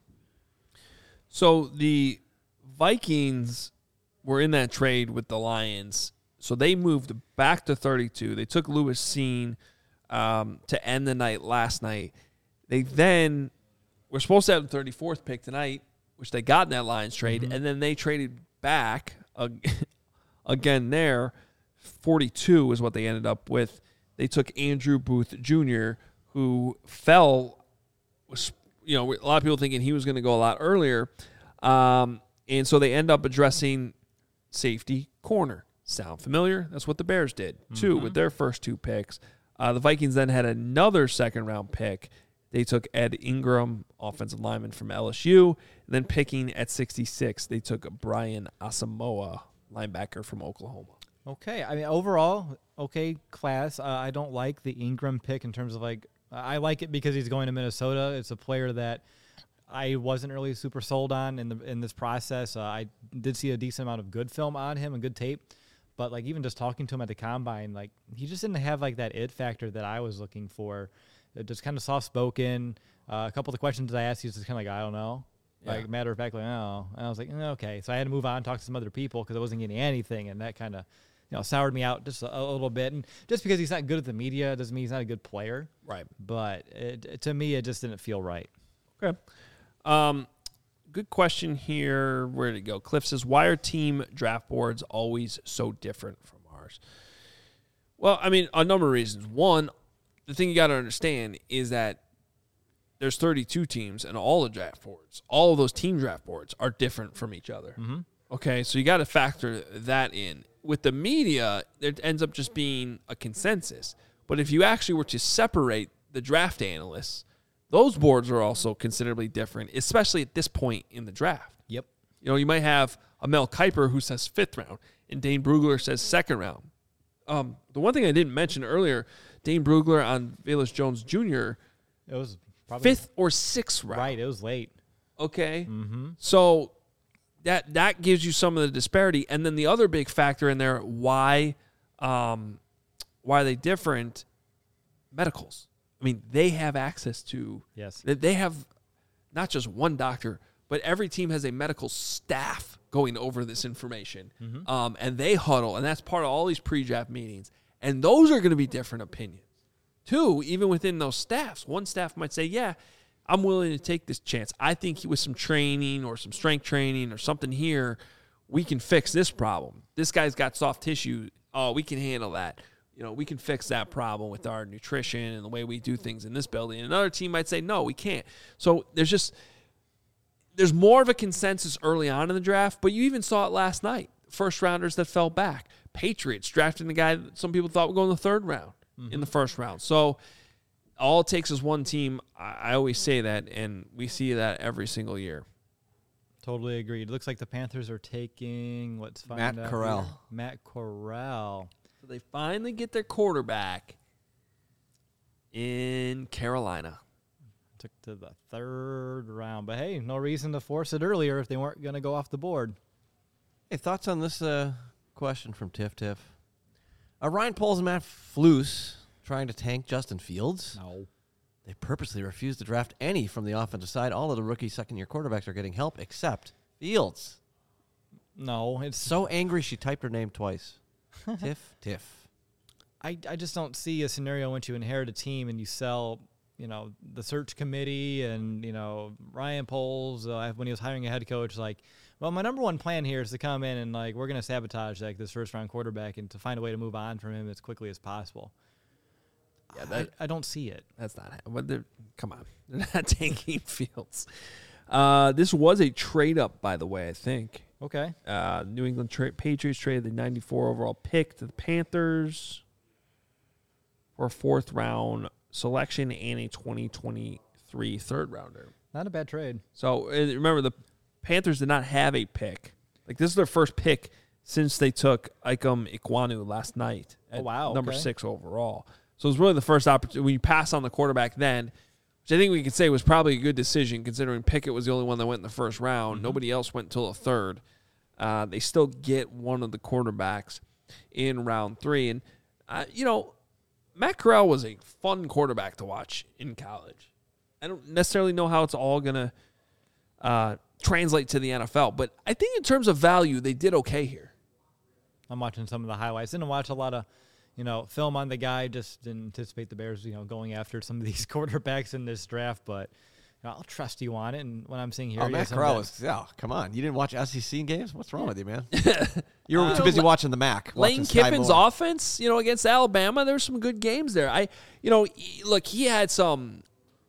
So the Vikings were in that trade with the Lions. So they moved back to thirty-two. They took Lewis Seen um, to end the night last night. They then were supposed to have the thirty-fourth pick tonight, which they got in that Lions trade, Mm-hmm. and then they traded back uh, again there. forty-two is what they ended up with. They took Andrew Booth Junior, who fell, was, you know, a lot of people thinking he was going to go a lot earlier. Um, and so they end up addressing safety corner. Sound familiar? That's what the Bears did, too, Mm-hmm. with their first two picks. Uh, the Vikings then had another second-round pick. They took Ed Ingram, offensive lineman from L S U. And then picking at sixty-six, they took Brian Asamoah, linebacker from Oklahoma. Okay, I mean overall, okay class. Uh, I don't like the Ingram pick in terms of like I like it because he's going to Minnesota. It's a player that I wasn't really super sold on in the in this process. Uh, I did see a decent amount of good film on him and good tape, but like even just talking to him at the combine, like he just didn't have like that it factor that I was looking for. It just kind of soft spoken. Uh, a couple of the questions I asked, he was just kind of like I don't know. Yeah. Like matter of fact, like oh, and I was like mm, okay. So I had to move on, talk to some other people because I wasn't getting anything, and that kind of you know soured me out just a, a little bit. And just because he's not good at the media doesn't mean he's not a good player. Right. But it, to me, it just didn't feel right. Okay. Um, good question here. Where did it go? Cliff says, why are team draft boards always so different from ours? Well, I mean, a number of reasons. One, the thing you got to understand is that there's thirty-two teams, and all the draft boards, all of those team draft boards are different from each other. Mm-hmm. Okay, so you got to factor that in. With the media, it ends up just being a consensus. But if you actually were to separate the draft analysts, those boards are also considerably different, especially at this point in the draft. Yep. You know, you might have a Mel Kiper who says fifth round, and Dane Brugler says second round. Um, the one thing I didn't mention earlier, Dane Brugler on Velus Jones Junior, It was probably fifth or sixth round. Right, it was late. Okay. Mm-hmm. So that that gives you some of the disparity. And then the other big factor in there, why um, why are they different? Medicals. I mean, they have access to, yes. They have not just one doctor, but every team has a medical staff going over this information. Mm-hmm. Um, and they huddle, and that's part of all these pre-draft meetings. And those are going to be different opinions. Two, even within those staffs, one staff might say, yeah, I'm willing to take this chance. I think with some training or some strength training or something here, we can fix this problem. This guy's got soft tissue. Oh, we can handle that. You know, we can fix that problem with our nutrition and the way we do things in this building. Another team might say, no, we can't. So there's just, there's more of a consensus early on in the draft, but you even saw it last night. First rounders that fell back. Patriots drafting the guy that some people thought would go in the third round, mm-hmm. in the first round. So all it takes is one team. I always say that, and we see that every single year. Totally agreed. Looks like the Panthers are taking, what's Matt Corral. Here? Matt Corral. So they finally get their quarterback in Carolina. Took to the third round. But, hey, no reason to force it earlier if they weren't going to go off the board. Hey, thoughts on this uh, question from Tiff Tiff? Uh, Ryan Poles and Matt Flus trying to tank Justin Fields? No. They purposely refused to draft any from the offensive side. All of the rookie second-year quarterbacks are getting help except Fields. No. It's So angry she typed her name twice. Tiff Tiff. I, I just don't see a scenario once you inherit a team and you sell, you know, the search committee and, you know, Ryan Poles, uh, when he was hiring a head coach, like, well, my number one plan here is to come in and, like, we're going to sabotage, like, this first-round quarterback and to find a way to move on from him as quickly as possible. Yeah, that, I, I don't see it. That's not but they're come on. They're not tanking Fields. Uh, this was a trade-up, by the way, I think. Okay. Uh, New England tra- Patriots traded the ninety-four overall pick to the Panthers for a fourth-round selection and a twenty twenty-three third-rounder. Not a bad trade. So, uh, remember, the Panthers did not have a pick. Like, this is their first pick since they took Ikem Ekwonu last night at oh, wow, number okay. six overall. So it was really the first opportunity. When you pass on the quarterback then, which I think we could say was probably a good decision considering Pickett was the only one that went in the first round. Mm-hmm. Nobody else went until the third. Uh, they still get one of the quarterbacks in round three. And, uh, you know, Matt Corral was a fun quarterback to watch in college. I don't necessarily know how it's all going to uh, translate to the N F L, but I think in terms of value, they did okay here. I'm watching some of the highlights. Didn't watch a lot of, you know, film on the guy. Just didn't anticipate the Bears, you know, going after some of these quarterbacks in this draft. But you know, I'll trust you on it. And what I'm seeing here, oh, Matt Corral was, yeah, come on. You didn't watch S E C games? What's wrong with you, man? You were uh, too busy watching the M A C. Lane Kiffin's offense, you know, against Alabama, there were some good games there. I, you know, he, look, he had some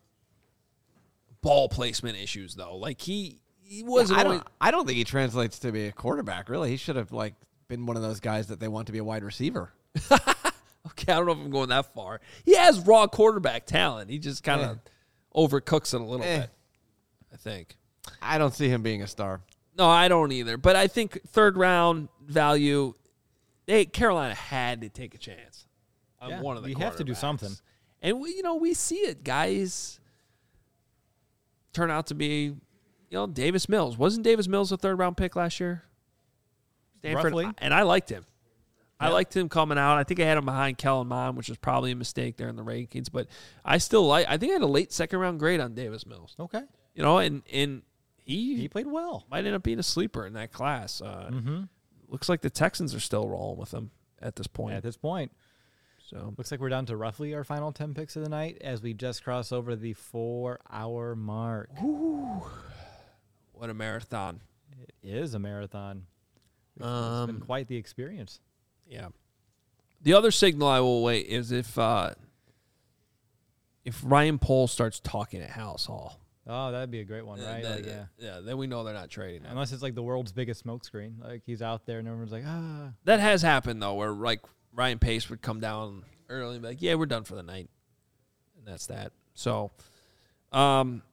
ball placement issues though. Like he, he wasn't. Yeah, I don't. always, I don't think he translates to be a quarterback. Really, he should have like been one of those guys that they want to be a wide receiver. Okay, I don't know if I'm going that far. He has raw quarterback talent. He just kind of eh. overcooks it a little eh. bit, I think. I don't see him being a star. No, I don't either. But I think third round value, they Carolina had to take a chance on yeah, one of the you have to do something. And, we, you know, we see it. Guys turn out to be, you know, Davis Mills. Wasn't Davis Mills a third round pick last year? Stanford, Roughly. And I liked him. I Yeah. liked him coming out. I think I had him behind Kellen Mond, which was probably a mistake there in the rankings. But I still like. I think I had a late second round grade on Davis Mills. Okay. You know, and and he He played well. might end up being a sleeper in that class. Uh, Mm-hmm. Looks like the Texans are still rolling with him at this point. At this point. So Looks like we're down to roughly our final ten picks of the night as we just cross over the four-hour mark. Ooh, what a marathon! It is a marathon. It's Um, been quite the experience. Yeah. The other signal I will wait is if uh, if Ryan Poles starts talking at House Hall. Oh, that'd be a great one, right? Then- Like, yeah. yeah. Then we know they're not trading him. Unless it's like the world's biggest smokescreen. Like he's out there and everyone's like, ah. That has happened though, where like Ryan Pace would come down early and be like, "Yeah, we're done for the night." and that's that. So, um,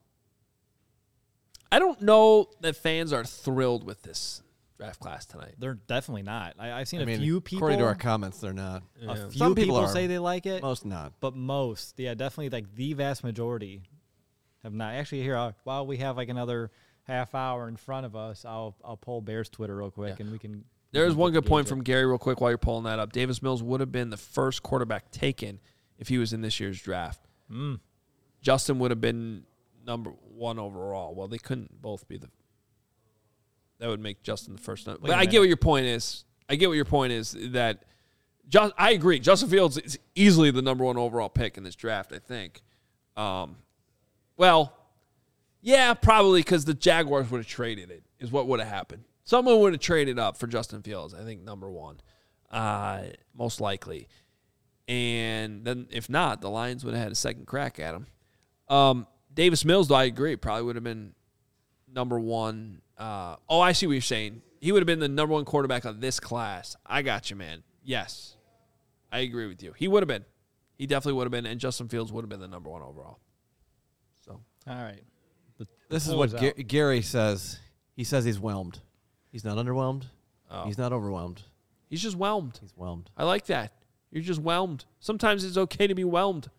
I don't know that fans are thrilled with this draft class tonight. They're definitely not. I, I've seen I a mean, few people. according to our comments, they're not. A Yeah. few Some people people are. say they like it, Most not. but most, yeah, definitely like the vast majority have not. Actually, here, uh, while we have like another half hour in front of us, I'll I'll pull Bears Twitter real quick, Yeah. and we can. There's one good point gauge from it. Gary real quick while you're pulling that up. Davis Mills would have been the first quarterback taken if he was in this year's draft. Mm. Justin would have been number one overall. Well, they couldn't both be the. That would make Justin the first. But Wait a I get minute. what your point is. I get what your point is that. Just, I agree. Justin Fields is easily the number one overall pick in this draft, I think. Um, well, yeah, probably because the Jaguars would have traded it, is what would have happened. Someone would have traded up for Justin Fields, I think, number one, uh, most likely. And then if not, the Lions would have had a second crack at him. Um, Davis Mills, though, I agree, probably would have been number one. Uh, oh, I see what you're saying. He would have been the number one quarterback of this class. I got you, man. Yes. I agree with you. He would have been. He definitely would have been, and Justin Fields would have been the number one overall. So, All right. The, the This is poll what Ga- out. Gary says. He says he's whelmed. He's not underwhelmed. oh. He's not overwhelmed. he's just whelmed. He's whelmed. I like that. You're just whelmed. Sometimes it's okay to be whelmed.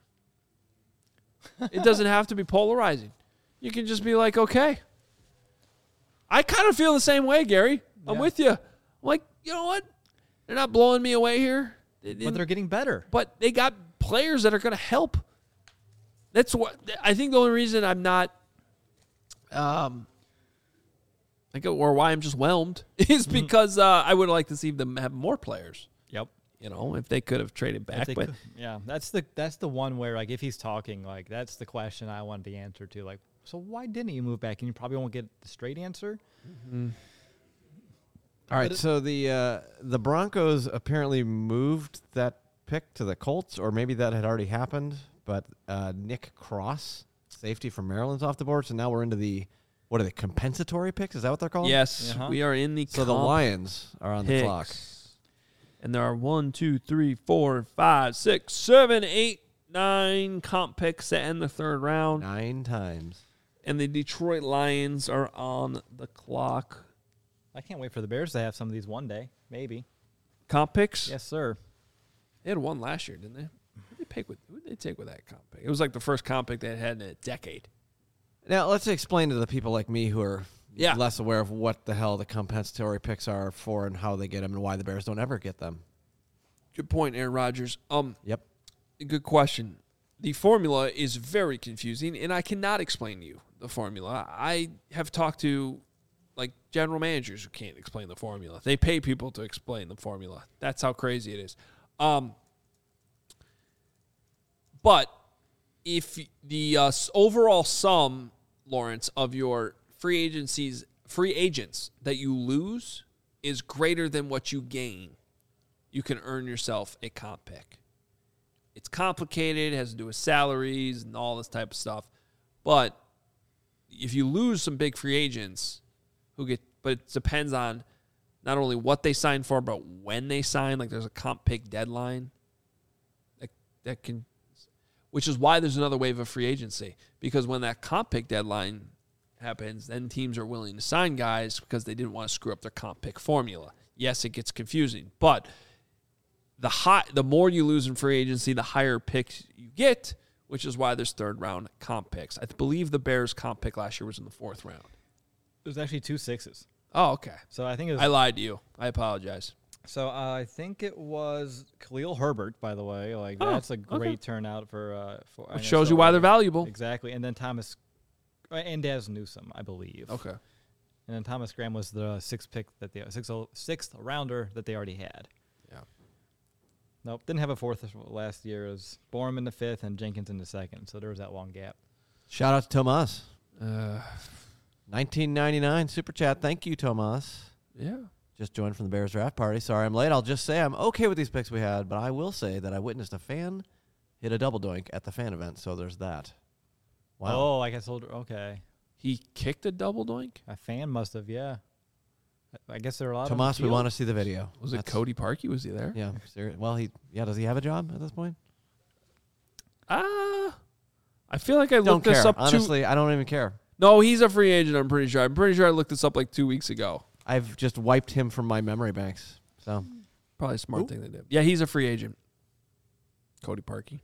It doesn't have to be polarizing. You can just be like, okay. I kind of feel the same way, Gary. I'm Yeah. with you. I'm like, you know what? They're not blowing me away here. They But didn't- they're getting better. but they got players that are going to help. That's what I think. The only reason I'm not, um, like, or why I'm just whelmed is because uh, I would like to see them have more players. Yep. You know, if they could have traded If back, they but could- yeah, that's the that's the one where like if he's talking, like that's the question I want the answer to. Like, so why didn't you move back? And you probably won't get the straight answer. All right, But it- so the uh, the Broncos apparently moved that pick to the Colts, or maybe that had already happened. But uh, Nick Cross, safety from Maryland's off the board. So now we're into the what are they compensatory picks? Is that what they're called? yes, Uh-huh. we are in the So the comp Lions are on the clock. picks. And there are one, two, three, four, five, six, seven, eight, nine comp picks to end the third round. Nine times. And the Detroit Lions are on the clock. I can't wait for the Bears to have some of these one day, maybe. Comp picks? Yes, sir. They had one last year, didn't they? Who did they pick with? Who did they take with that comp pick? It was like the first comp pick they had in a decade. Now let's explain to the people like me who are Yeah. less aware of what the hell the compensatory picks are for and how they get them and why the Bears don't ever get them. Good point, Aaron Rodgers. Um, Yep. good question. The formula is very confusing, and I cannot explain to you the formula. I have talked to like general managers who can't explain the formula. They pay people to explain the formula. That's how crazy it is. Um, but if the uh, s- overall sum, Lawrence, of your free agencies, free agents that you lose is greater than what you gain, you can earn yourself a comp pick. It's complicated, it has to do with salaries and all this type of stuff. But if you lose some big free agents who get, but it depends on not only what they sign for, but when they sign. Like there's a comp pick deadline that, that can, which is why there's another wave of free agency. Because when that comp pick deadline happens, then teams are willing to sign guys because they didn't want to screw up their comp pick formula. Yes, it gets confusing, but the high, the more you lose in free agency, the higher picks you get, which is why there's third round comp picks. I believe the Bears comp pick last year was in the fourth round. There's actually two sixes. Oh, okay. So I think it was, I lied to you. I apologize. so uh, I think it was Khalil Herbert, by the way. Like Oh, that's a great okay. turnout for uh for I Which know, shows so you why they're early. valuable. Exactly. And then Thomas uh, and Daz Newsome, I believe. Okay. And then Thomas Graham was the sixth pick that they sixth, sixth rounder that they already had. Yeah. Nope, didn't have a fourth last year. It was Borum in the fifth and Jenkins in the second. So there was that long gap. Shout out to Tomas. Uh, nineteen ninety-nine super chat. Thank you, Tomas. yeah. Just joined from the Bears draft party. Sorry I'm late. I'll just say I'm okay with these picks we had, but I will say that I witnessed a fan hit a double doink at the fan event, so there's that. Wow. Oh, like I told her. Okay. He kicked a double doink? A fan must have, yeah. I- I guess there are a lot Tomas, of we want to see the video. Was it That's- Cody Parkey? Was he there? Yeah. Serious. Well, he yeah. Does he have a job at this point? Ah, I feel like I Don't looked care. this up. Honestly, two... I don't even care. No, he's a free agent. I'm pretty sure. I'm pretty sure I looked this up like two weeks ago. I've just wiped him from my memory banks. So probably a smart Ooh. thing they did. Yeah, he's a free agent. Cody Parkey.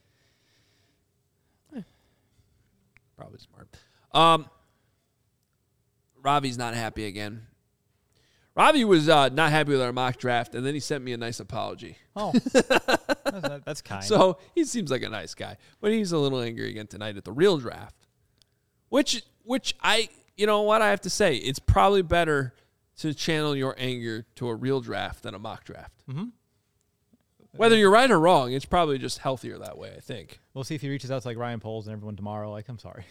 Eh. Probably smart. Um, Ravi's not happy again. Ravi was uh, not happy with our mock draft, and then he sent me a nice apology. Oh, that's, that's kind. So he seems like a nice guy, but he's a little angry again tonight at the real draft. Which, which I, you know what I have to say, it's probably better to channel your anger to a real draft than a mock draft. Mm-hmm. Whether you're right or wrong, it's probably just healthier that way, I think. We'll see if he reaches out to like Ryan Poles and everyone tomorrow. Like, I'm sorry.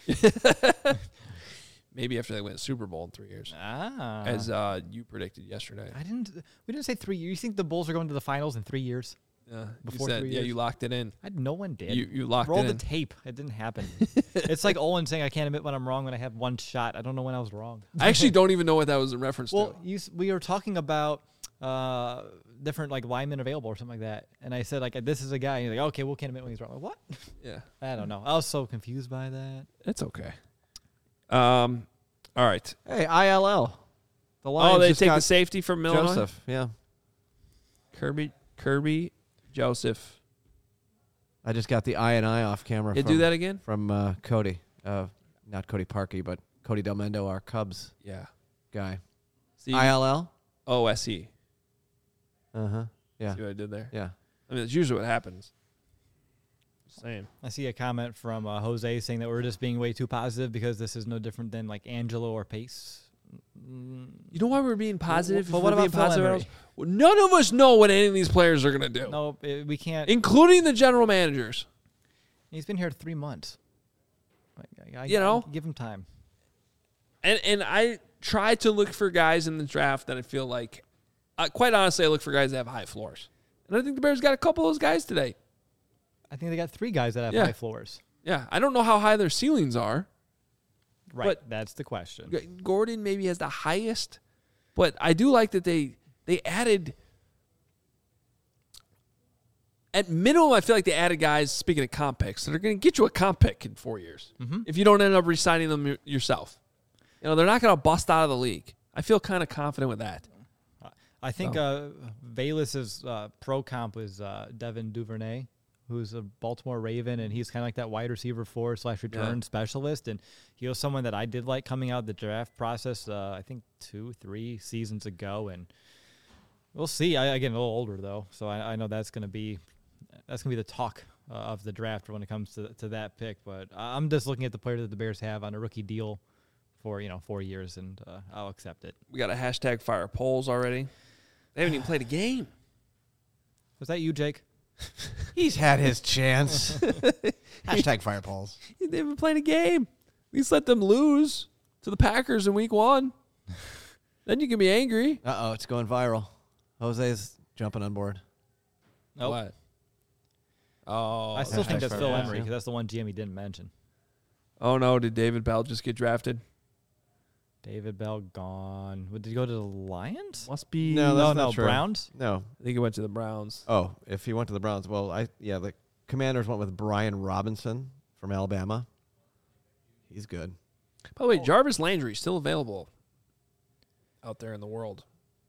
Maybe after they win the Super Bowl in three years, Ah, as uh, you predicted yesterday. I didn't. We didn't say three years. You think the Bulls are going to the finals in three years? Yeah, Before you said, three yeah, years? you locked it in. I, no one did. You you locked Roll it the in. tape. It didn't happen. It's like Owen saying, "I can't admit when I'm wrong when I have one shot." I don't know when I was wrong. I actually don't even know what that was in reference Well, to. you, s- we were talking about uh, different like linemen available or something like that, and I said like, "This is a guy." And you're like, "Okay, we'll can't admit when he's wrong." Like, what? Yeah, I don't know. I was so confused by that. it's okay. Um, all right. hey, I L L. The Lions Oh, they just take got the safety from Illinois. Joseph. Yeah, Kirby Kirby Joseph. I just got the I and I off camera. Yeah, from, do that again. from uh, Cody. Uh, not Cody Parkey, but Cody Delmendo, our Cubs Yeah. guy. See, I L L. O S E. Uh huh. Yeah. See what I did there? Yeah. I mean, that's usually what happens. Just saying. I see a comment from uh, Jose saying that we're just being way too positive because this is no different than like Angelo or Pace. Mm, You know why we're being positive? But If what we're about being Phil positive Emery? Well, none of us know what any of these players are going to do, no, it, we can't. including the general managers. He's been here three months. Like, I, I, You know? I give him time. And and I try to look for guys in the draft that I feel like, uh, quite honestly, I look for guys that have high floors. And I think the Bears got a couple of those guys today. I think they got three guys that have Yeah. high floors. Yeah, I don't know how high their ceilings are. Right, But- that's the question. G- Gordon maybe has the highest, but I do like that they they added. At minimum, I feel like they added guys, speaking of comp picks, that are going to get you a comp pick in four years Mhm. if you don't end up re-signing them y- yourself. You know, they're not going to bust out of the league. I feel kind of confident with that. I think So. uh, Bayless's uh, pro comp is uh, Devin Duvernay, who's a Baltimore Raven, and he's kind of like that wide receiver four slash return Yeah. specialist. And he was someone that I did like coming out of the draft process, uh, I think two, three seasons ago. And we'll see. I, I get a little older, though, so I, I know that's going to be that's going to be the talk uh, of the draft when it comes to, to that pick. But I'm just looking at the player that the Bears have on a rookie deal for, you know, four years, and uh, I'll accept it. We got a hashtag fire polls already. They haven't even played a game. Was that you, Jake? He's had his chance. Hashtag fire polls. They haven't played a game. At least let them lose to the Packers in week one. Then you can be angry. Uh oh, it's going viral. Jose's jumping on board. Nope. What? Oh, I still think hashtag that's fire Phil polls, Emery yeah. because that's the one G M he didn't mention. Oh no! Did David Bell just get drafted? David Bell gone. What, did he go to the Lions? Must be. No, no, that's no, not true. Browns. No. I think he went to the Browns. Oh, if he went to the Browns, well, I yeah, the Commanders went with Brian Robinson from Alabama. He's good. By the way, Jarvis Landry still available out there in the world.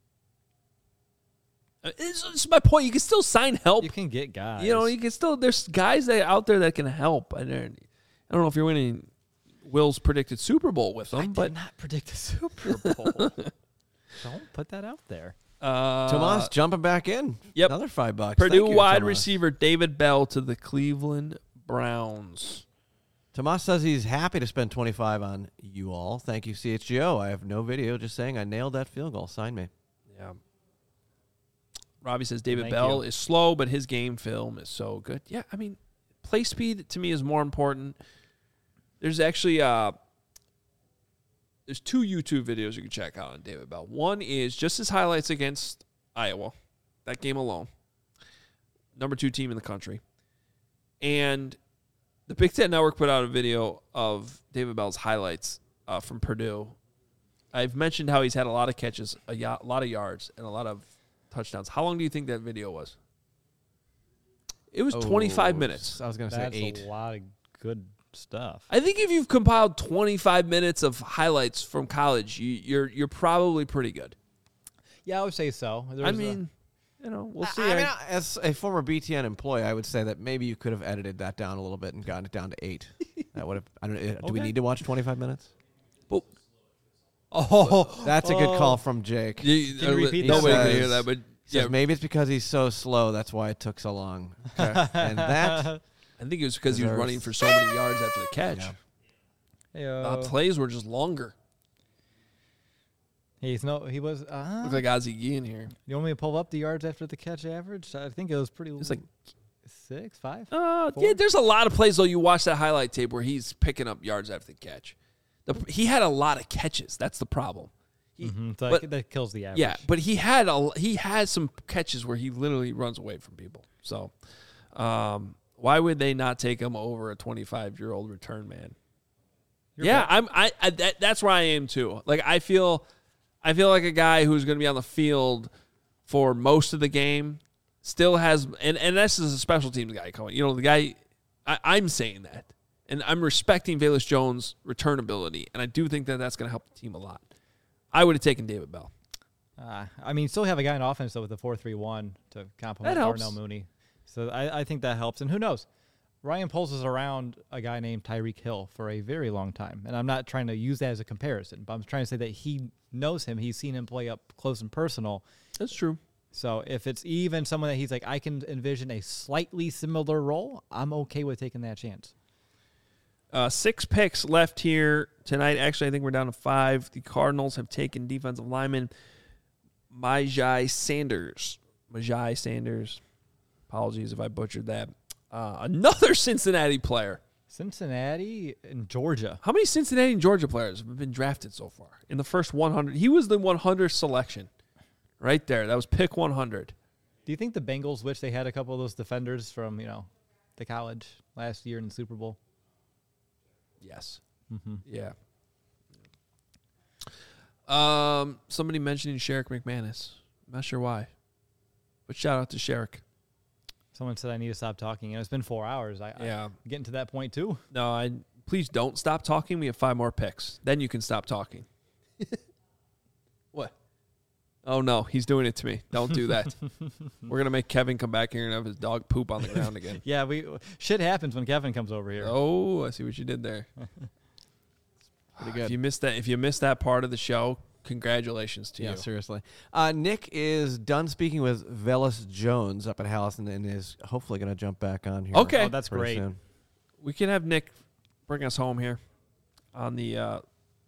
Uh, This this is my point. You can still sign help. You can get guys. You know, you can still. There's guys that out there that can help. And they're- I don't know if you're winning Will's predicted Super Bowl with them, I but did not predict a Super Bowl. Don't put that out there. uh, Tomas jumping back in. Yep. Another five bucks. Purdue Thank you, wide Tomas. receiver David Bell to the Cleveland Browns. Tomas says he's happy to spend twenty-five on you all. Thank you, C H G O. I have no video, just saying I nailed that field goal. Sign me. Yeah. Robbie says David Thank Bell you. is slow, but his game film is so good. Yeah, I mean, play speed to me is more important. There's actually uh, there's two YouTube videos you can check out on David Bell. One is just his highlights against Iowa, that game alone, number two team in the country, and the Big Ten Network put out a video of David Bell's highlights uh, from Purdue. I've mentioned how he's had a lot of catches, a ya- lot of yards, and a lot of touchdowns. How long do you think that video was? It was twenty-five Oh, minutes. I was going to say That's eight. a lot of good stuff. I think if you've compiled twenty-five minutes of highlights from college, you, you're you're probably pretty good. Yeah, I would say so. There's I mean, a, you know, we'll see. I, I mean, as a former B T N employee, I would say that maybe you could have edited that down a little bit and gotten it down to eight. That would have. I don't. Do Okay. we need to watch twenty-five minutes? Well, Oh, that's a good oh. call from Jake. you, Can you repeat nobody that? can hear that, but He says yeah, maybe it's because he's so slow. That's why it took so long. Okay. And that. I think it was because he was deserves- running for so many yards after the catch. Yeah. Uh, Heyo. plays were just longer. He's no. He was. Uh, Look like Ozzie Guillen here. you want me to pull up the yards after the catch average? I think it was pretty. It's like six, five. Uh, Four? yeah, there's a lot of plays, though. You watch that highlight tape where he's picking up yards after the catch. The, he had a lot of catches. That's the problem. He, Mm-hmm. So but- that, that kills the average. yeah, but he had a he had some catches where he literally runs away from people. So, um, why would they not take him over a twenty-five-year-old return man? You're yeah, right. I'm. I, I that, that's where I am too. Like I feel, I feel like a guy who's going to be on the field for most of the game still has, and and this is a special teams guy coming. You know, the guy. I, I'm saying that, and I'm respecting Velus Jones' return ability, and I do think that that's going to help the team a lot. I would have taken David Bell. Uh, I mean, still have a guy in offense though with the four three one to complement That helps. Darnell Mooney. So I, I think that helps. And who knows? Ryan Poles is around a guy named Tyreek Hill for a very long time. And I'm not trying to use that as a comparison, but I'm trying to say that he knows him. He's seen him play up close and personal. That's true. So if it's even someone that he's like, I can envision a slightly similar role, I'm okay with taking that chance. Uh, six picks left here tonight. Actually, I think we're down to five. The Cardinals have taken defensive lineman Majai Sanders. Majai Sanders. Apologies if I butchered that. Uh, another Cincinnati player. Cincinnati and Georgia. How many Cincinnati and Georgia players have been drafted so far in the first one hundred? He was the one hundredth selection right there. That was pick one hundred. Do you think the Bengals wish they had a couple of those defenders from, you know, the college last year in the Super Bowl? Yes. Mm-hmm. Yeah. Um, somebody mentioning Sherrick McManus. I'm not sure why, but shout out to Sherrick. Someone said I need to stop talking. You know, it's been four hours. I, Yeah. I'm getting to that point too. No, I please don't stop talking. We have five more picks. Then you can stop talking. What? Oh no, he's doing it to me. Don't do that. We're gonna make Kevin come back here and have his dog poop on the ground again. Yeah, we shit happens when Kevin comes over here. Oh, I see what you did there. Pretty good. If you missed that, if you missed that part of the show, congratulations to Yeah, you. seriously. Uh, Nick is done speaking with Velus Jones up at Hallison and is hopefully going to jump back on here. Okay. Oh, that's pretty great. soon. We can have Nick bring us home here on the uh,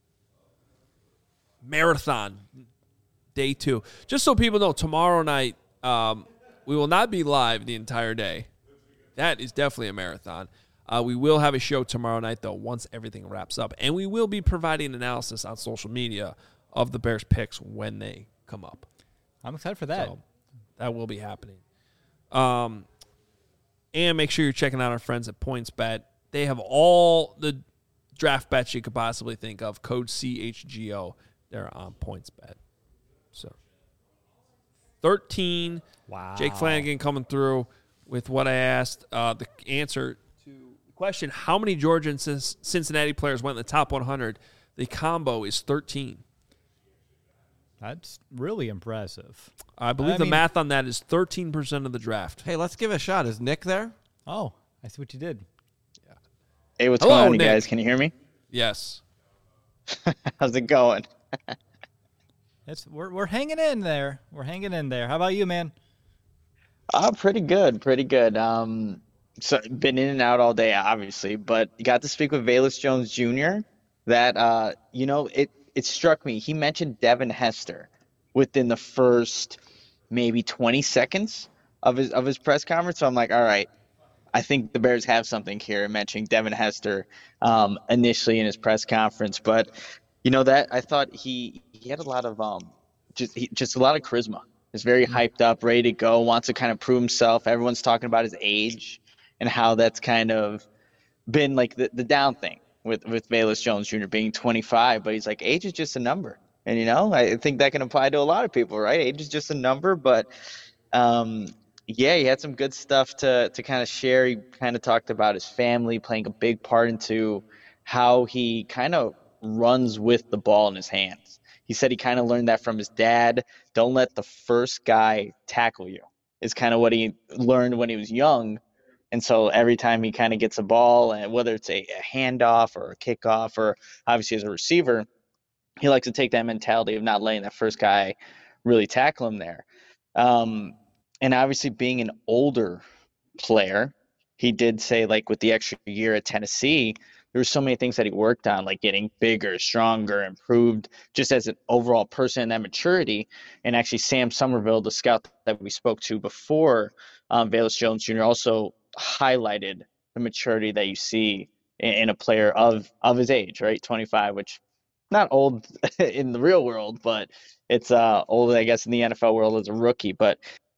marathon day two. Just so people know, tomorrow night um, we will not be live the entire day. That is definitely a marathon. Uh, we will have a show tomorrow night, though, once everything wraps up. And we will be providing analysis on social media of the Bears picks when they come up. I'm excited for that. So that will be happening. Um, and make sure you're checking out our friends at PointsBet. They have all the draft bets you could possibly think of. Code C H G O. They're on PointsBet. So thirteen. Wow. Jake Flanagan coming through with what I asked. Uh, the answer to the question, how many Georgia and Cincinnati players went in the top one hundred? The combo is thirteen. That's really impressive. I believe I the mean- math on that is thirteen percent of the draft. Hey, let's give it a shot. Is Nick there? Oh, I see what you did. Hey, what's Hello, going on, you Nick. guys? Can you hear me? Yes. How's it going? It's we're we're hanging in there. We're hanging in there. How about you, man? Uh, pretty good, pretty good. Um, so been in and out all day, obviously, but got to speak with Velus Jones Junior That uh, you know, it it struck me. He mentioned Devin Hester within the first maybe twenty seconds of his of his press conference. So I'm like, all right, I think the Bears have something here. Mentioning Devin Hester um, initially in his press conference, but you know that I thought he he had a lot of um just he, just a lot of charisma. Is very hyped up, ready to go, wants to kind of prove himself. Everyone's talking about his age and how that's kind of been like the, the down thing with, with Velus Jones Junior being twenty-five. But he's like, age is just a number. And, you know, I think that can apply to a lot of people, right? Age is just a number. But um, Yeah, he had some good stuff to to kind of share. He kind of talked about his family playing a big part into how he kind of runs with the ball in his hands. He said he kind of learned that from his dad. Don't let the first guy tackle you, is kind of what he learned when he was young. And so every time he kind of gets a ball, and whether it's a, a handoff or a kickoff, or obviously as a receiver, he likes to take that mentality of not letting that first guy really tackle him there. Um, and obviously being an older player, he did say, like, with the extra year at Tennessee, there were so many things that he worked on, like getting bigger, stronger, improved just as an overall person and that maturity. And actually Sam Somerville, the scout that we spoke to before, um, Velus Jones Junior also highlighted the maturity that you see in, in a player of of his age, right? twenty-five, which not old in the real world, but it's uh old, I guess, in the N F L world as a rookie. But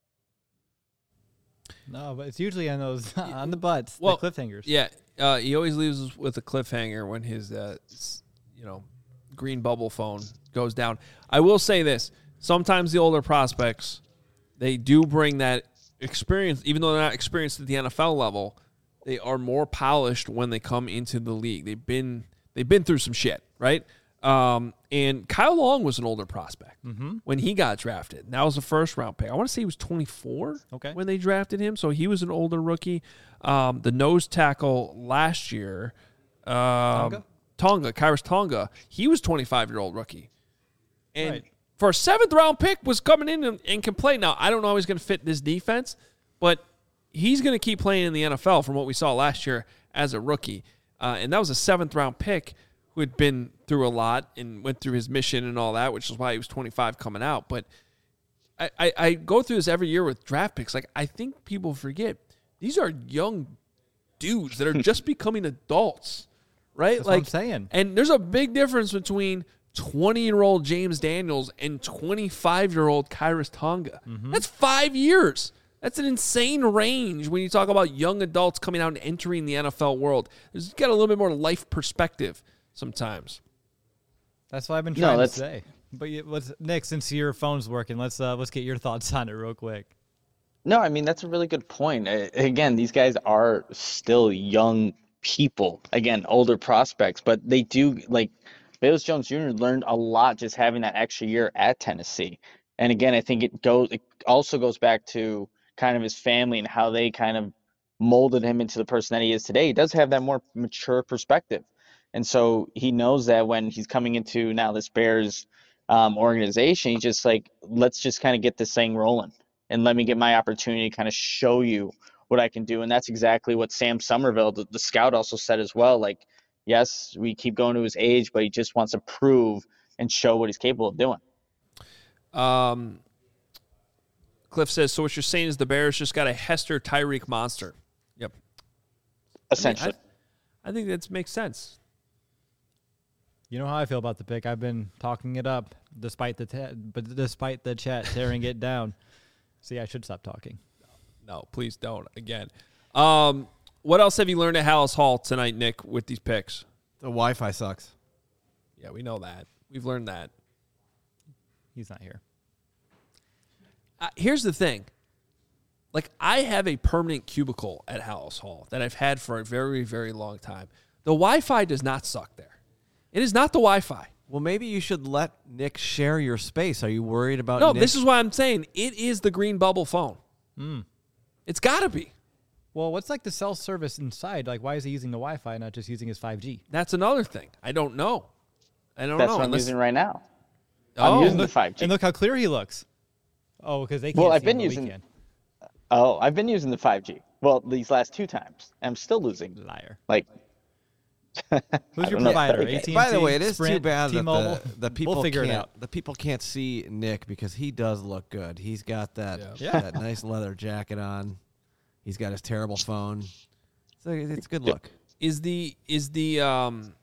no, but it's usually on those on the butts, well, the cliffhangers. Yeah, uh, he always leaves us with a cliffhanger when his, uh, you know, green bubble phone goes down. I will say this: sometimes the older prospects, they do bring that experience, even though they're not experienced at the N F L level. They are more polished when they come into the league. They've been they've been through some shit, right? Um, and Kyle Long was an older prospect mm-hmm. when he got drafted. That was a first round pick. I want to say he was twenty-four okay. when they drafted him. So he was an older rookie. Um, the nose tackle last year, um, Tonga? Tonga, Kairos Tonga, he was twenty-five year old rookie. And right. for a seventh round pick was coming in and, and can play. Now, I don't know how he's going to fit this defense, but he's going to keep playing in the N F L from what we saw last year as a rookie. Uh, and that was a seventh round pick who had been through a lot and went through his mission and all that, which is why he was twenty-five coming out. But I, I, I go through this every year with draft picks. Like, I think people forget these are young dudes that are just becoming adults, right? That's like, what I'm saying. And there's a big difference between twenty-year-old James Daniels and twenty-five-year-old Kairos Tonga. Mm-hmm. That's five years. That's an insane range when you talk about young adults coming out and entering the N F L world. There's got a little bit more life perspective sometimes. That's what I've been trying no, to say. But you, let's, Nick, since your phone's working, let's uh, let's get your thoughts on it real quick. No, I mean, that's a really good point. Uh, Again, these guys are still young people. Again, older prospects, but they do, like, Velus Jones Junior learned a lot just having that extra year at Tennessee. And again, I think it goes, it also goes back to kind of his family and how they kind of molded him into the person that he is today. He does have that more mature perspective. And so he knows that when he's coming into now this Bears um, organization, he's just like, let's just kind of get this thing rolling and let me get my opportunity to kind of show you what I can do. And that's exactly what Sam Somerville, the, the scout, also said as well. Like, yes, we keep going to his age, but he just wants to prove and show what he's capable of doing. Um, Cliff says, so what you're saying is the Bears just got a Hester Tyreek monster. Yep. Essentially. I, mean, I, I think that makes sense. You know how I feel about the pick. I've been talking it up despite the te- but despite the chat tearing it down. See, I should stop talking. No, please don't. Again. Um, what else have you learned at Hallis Hall tonight, Nick, with these picks? The Wi-Fi sucks. Yeah, we know that. We've learned that. He's not here. Uh, here's the thing. Like, I have a permanent cubicle at Hallis Hall that I've had for a very, very long time. The Wi-Fi does not suck there. It is not the Wi-Fi. Well, maybe you should let Nick share your space. Are you worried about No, Nick? this is why I'm saying it is the green bubble phone. Mm. It's got to be. Well, what's like the cell service inside? Like, why is he using the Wi-Fi, not just using his five G? That's another thing. I don't know. I don't That's know. what I'm Unless- using right now. Oh, I'm using look, the five G. And look how clear he looks. Oh, because they can't Well, see I've been him, but we using- can. Oh, I've been using the five G. Well, these last two times. I'm still losing. Liar. Like, Who's I your don't know. provider? Okay. A T and T, By the way, it is Sprint, too bad that T-Mobile? the, the people We'll figure can't, it out. the people can't see Nick because he does look good. He's got that Yeah. Yeah. that nice leather jacket on. He's got his terrible phone. So it's a good look. is the is the um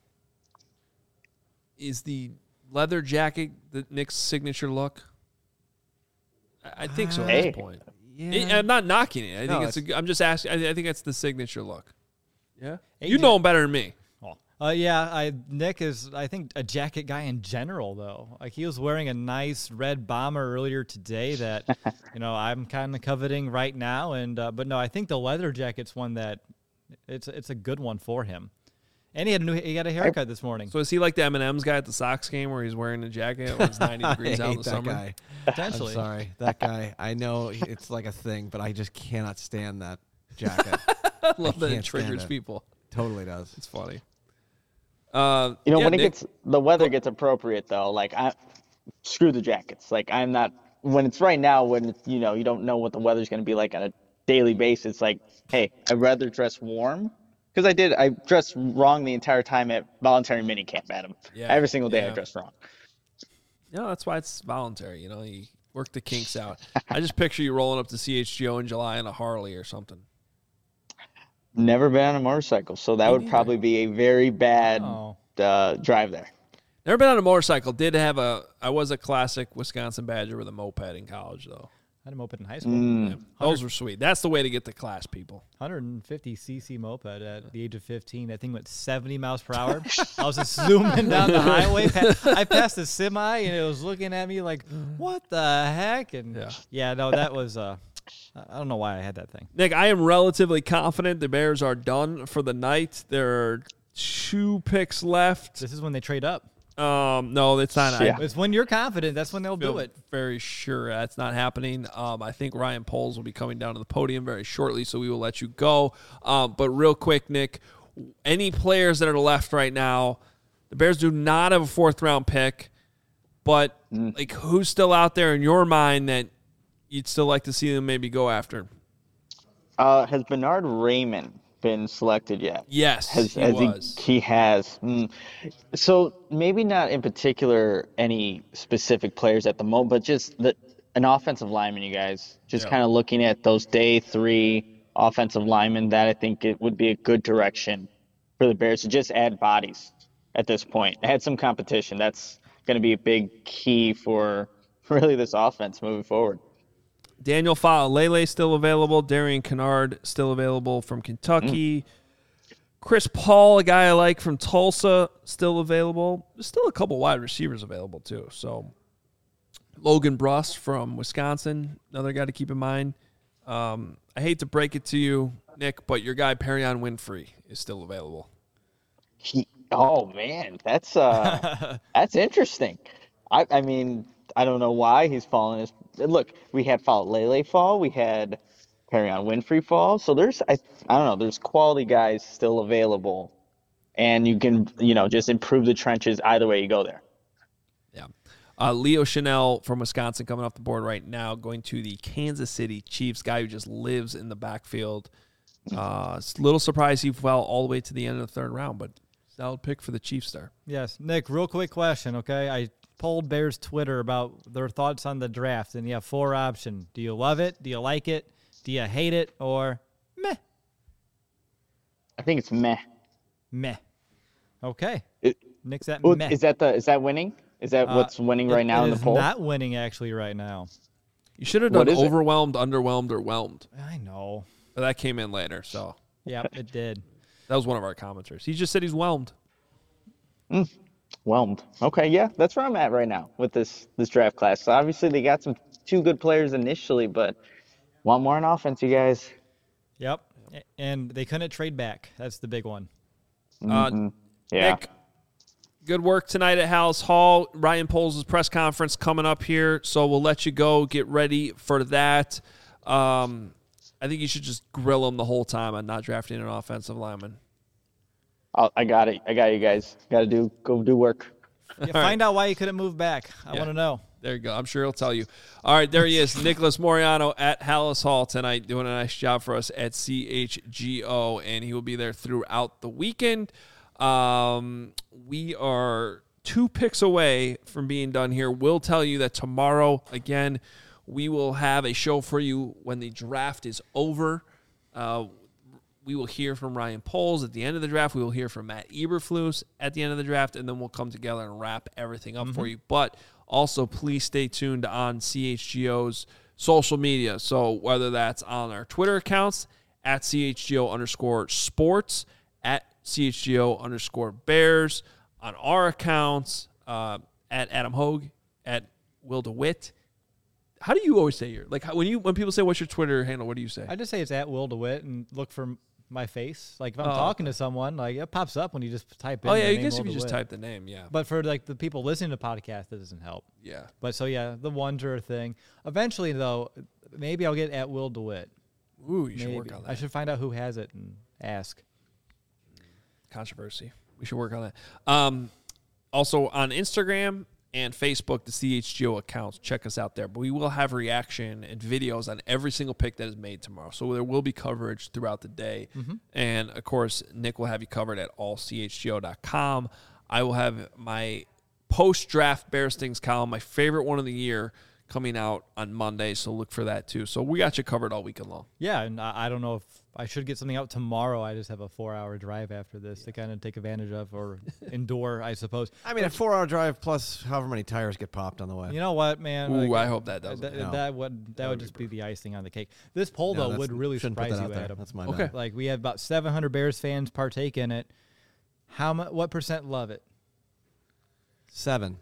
is the leather jacket the Nick's signature look? I, I think so at Hey. this point. Yeah. It- I'm not knocking it. I No, think it's. A, I'm just asking. I, I think that's the signature look. Yeah, A you J know him better than me. Well, Uh, yeah, I Nick is, I think, a jacket guy in general, though. Like, he was wearing a nice red bomber earlier today that, you know, I'm kind of coveting right now. And uh, But, no, I think the leather jacket's one that it's it's a good one for him. And he had a new, he got a haircut this morning. So is he like the M and M's guy at the Sox game where he's wearing a jacket when it's ninety degrees out in the that summer? Guy. Potentially. I'm sorry. That guy, I know it's like a thing, but I just cannot stand that jacket. I love that it can't triggers stand it. people. Totally does. It's funny. Uh, You know, yeah, when it Nick, gets the weather gets appropriate though, like I screw the jackets. Like I'm not when it's right now when it's, you know you don't know what the weather's going to be like on a daily basis. Like, hey, I'd rather dress warm because I did. I dressed wrong the entire time at voluntary minicamp, Adam. Yeah, Every single day yeah. I dressed wrong. no, that's why it's voluntary. You know, you work the kinks out. I just picture you rolling up to C H G O in July in a Harley or something. Never been on a motorcycle, so that Me would neither. probably be a very bad Oh. uh, drive there. Never been on a motorcycle. Did have a. I was a classic Wisconsin Badger with a moped in college, though. I had him open in high school. Mm. Yeah, those were sweet. That's the way to get the class, people. one hundred fifty c c moped at the age of fifteen. I think went seventy miles per hour. I was just zooming down the highway. Pa- I passed a semi, and it was looking at me like, what the heck? And Yeah. yeah, no, that was, uh, I don't know why I had that thing. Nick, I am relatively confident the Bears are done for the night. There are two picks left. This is when they trade up. Um, no, it's not. Yeah. I It's when you're confident. That's when they'll feel do it. very sure that's not happening. Um, I think Ryan Poles will be coming down to the podium very shortly, so we will let you go. Um, but real quick, Nick, any players that are left right now, the Bears do not have a fourth round pick, but Mm. like who's still out there in your mind that you'd still like to see them maybe go after? Uh, has Bernard Raymond been selected yet? Yes, Has, he has was. He, he has. Mm. So maybe not in particular any specific players at the moment, but just the, an offensive lineman, you guys. Just Yeah. kind of looking at those day three offensive linemen, that I think it would be a good direction for the Bears to just add bodies at this point. Add some competition. That's going to be a big key for really this offense moving forward. Daniel Fa'alele still available. Darian Kennard still available from Kentucky. Mm. Chris Paul, a guy I like from Tulsa, still available. There's still a couple wide receivers available too. So Logan Bruss from Wisconsin, another guy to keep in mind. Um, I hate to break it to you, Nick, but your guy Perion Winfrey is still available. He, oh man, that's uh, that's interesting. I, I mean, I don't know why he's fallen. His, look, we had Fa'alele fall, we had Perion Winfrey fall. So there's, I, I don't know, there's quality guys still available, and you can, you know, just improve the trenches either way you go there. Yeah. Uh, Leo Chanel from Wisconsin coming off the board right now, going to the Kansas City Chiefs, guy who just lives in the backfield. Uh, it's a little surprised he fell all the way to the end of the third round, but solid pick for the Chiefs there. Yes. Nick, real quick question, okay? I polled Bears Twitter about their thoughts on the draft, and you have four options. Do you love it? Do you like it? Do you hate it? Or meh? I think it's meh. Meh. Okay. It, Nick's at oh, meh. is that the is that winning? Is that Uh, what's winning it- right now it in the is poll? not winning, actually, right now. You should have What done is it? overwhelmed, underwhelmed, or whelmed. I know. But that came in later, so Yep, it did. that was one of our commenters. He just said he's whelmed. Whelmed. Okay, yeah, that's where I'm at right now with this this draft class. So obviously they got some two good players initially, but want more on offense, you guys. Yep. A- And they couldn't trade back. That's the big one. Mm-hmm. Uh, Yeah. Nick, good work tonight at Hallis Hall. Ryan Poles' press conference coming up here, so we'll let you go. Get ready for that. Um, I think you should just grill him the whole time on not drafting an offensive lineman. I'll, I got it. I got you guys. Got to do go do work. Yeah, find out why you couldn't move back. I Yeah. want to know. There you go. I'm sure he'll tell you. All right, there he is, Nicholas Moriano at Hallis Hall tonight, doing a nice job for us at C H G O, and he will be there throughout the weekend. Um, we are two picks away from being done here. We'll tell you that tomorrow, again, we will have a show for you when the draft is over. Uh, we will hear from Ryan Poles at the end of the draft. We will hear from Matt Eberflus at the end of the draft, and then we'll come together and wrap everything up mm-hmm. for you. But also, please stay tuned on C H G O's social media. So whether that's on our Twitter accounts, at C H G O underscore sports, at C H G O underscore Bears on our accounts, uh, at Adam Hogue, at Will DeWitt. How do you always say your, like, how, when you when people say, what's your Twitter handle, what do you say? I just say it's at Will DeWitt and look for my face. Like, if I'm oh, talking okay. to someone, like, it pops up when you just type in Oh, yeah, I name, guess Will if you DeWitt. just type the name, yeah. But for, like, the people listening to podcasts, that doesn't help. Yeah. But, so, yeah, the ones are a thing. Eventually, though, maybe I'll get at Will DeWitt. Ooh, you maybe. should work on that. I should find out who has it and ask. Controversy. We should work on that. Um, also, on Instagram and Facebook, the C H G O accounts. Check us out there. But we will have reaction and videos on every single pick that is made tomorrow. So there will be coverage throughout the day. Mm-hmm. And, of course, Nick will have you covered at all c h g o dot com. I will have my post-draft Bears Things column, my favorite one of the year, coming out on Monday. So look for that, too. So we got you covered all weekend long. Yeah, and I, I don't know if I should get something out tomorrow. I just have a four-hour drive after this yeah. to kind of take advantage of or endure, I suppose. I mean, a four-hour drive plus however many tires get popped on the way. You know what, man? Ooh, like, I hope that doesn't. That, no. that would that, that would just be, be the icing on the cake. This poll, no, though, would really surprise you, Adam. Adam. That's my okay. bad. Like, we have about seven hundred Bears fans partake in it. How mu- What percent love it? Seven.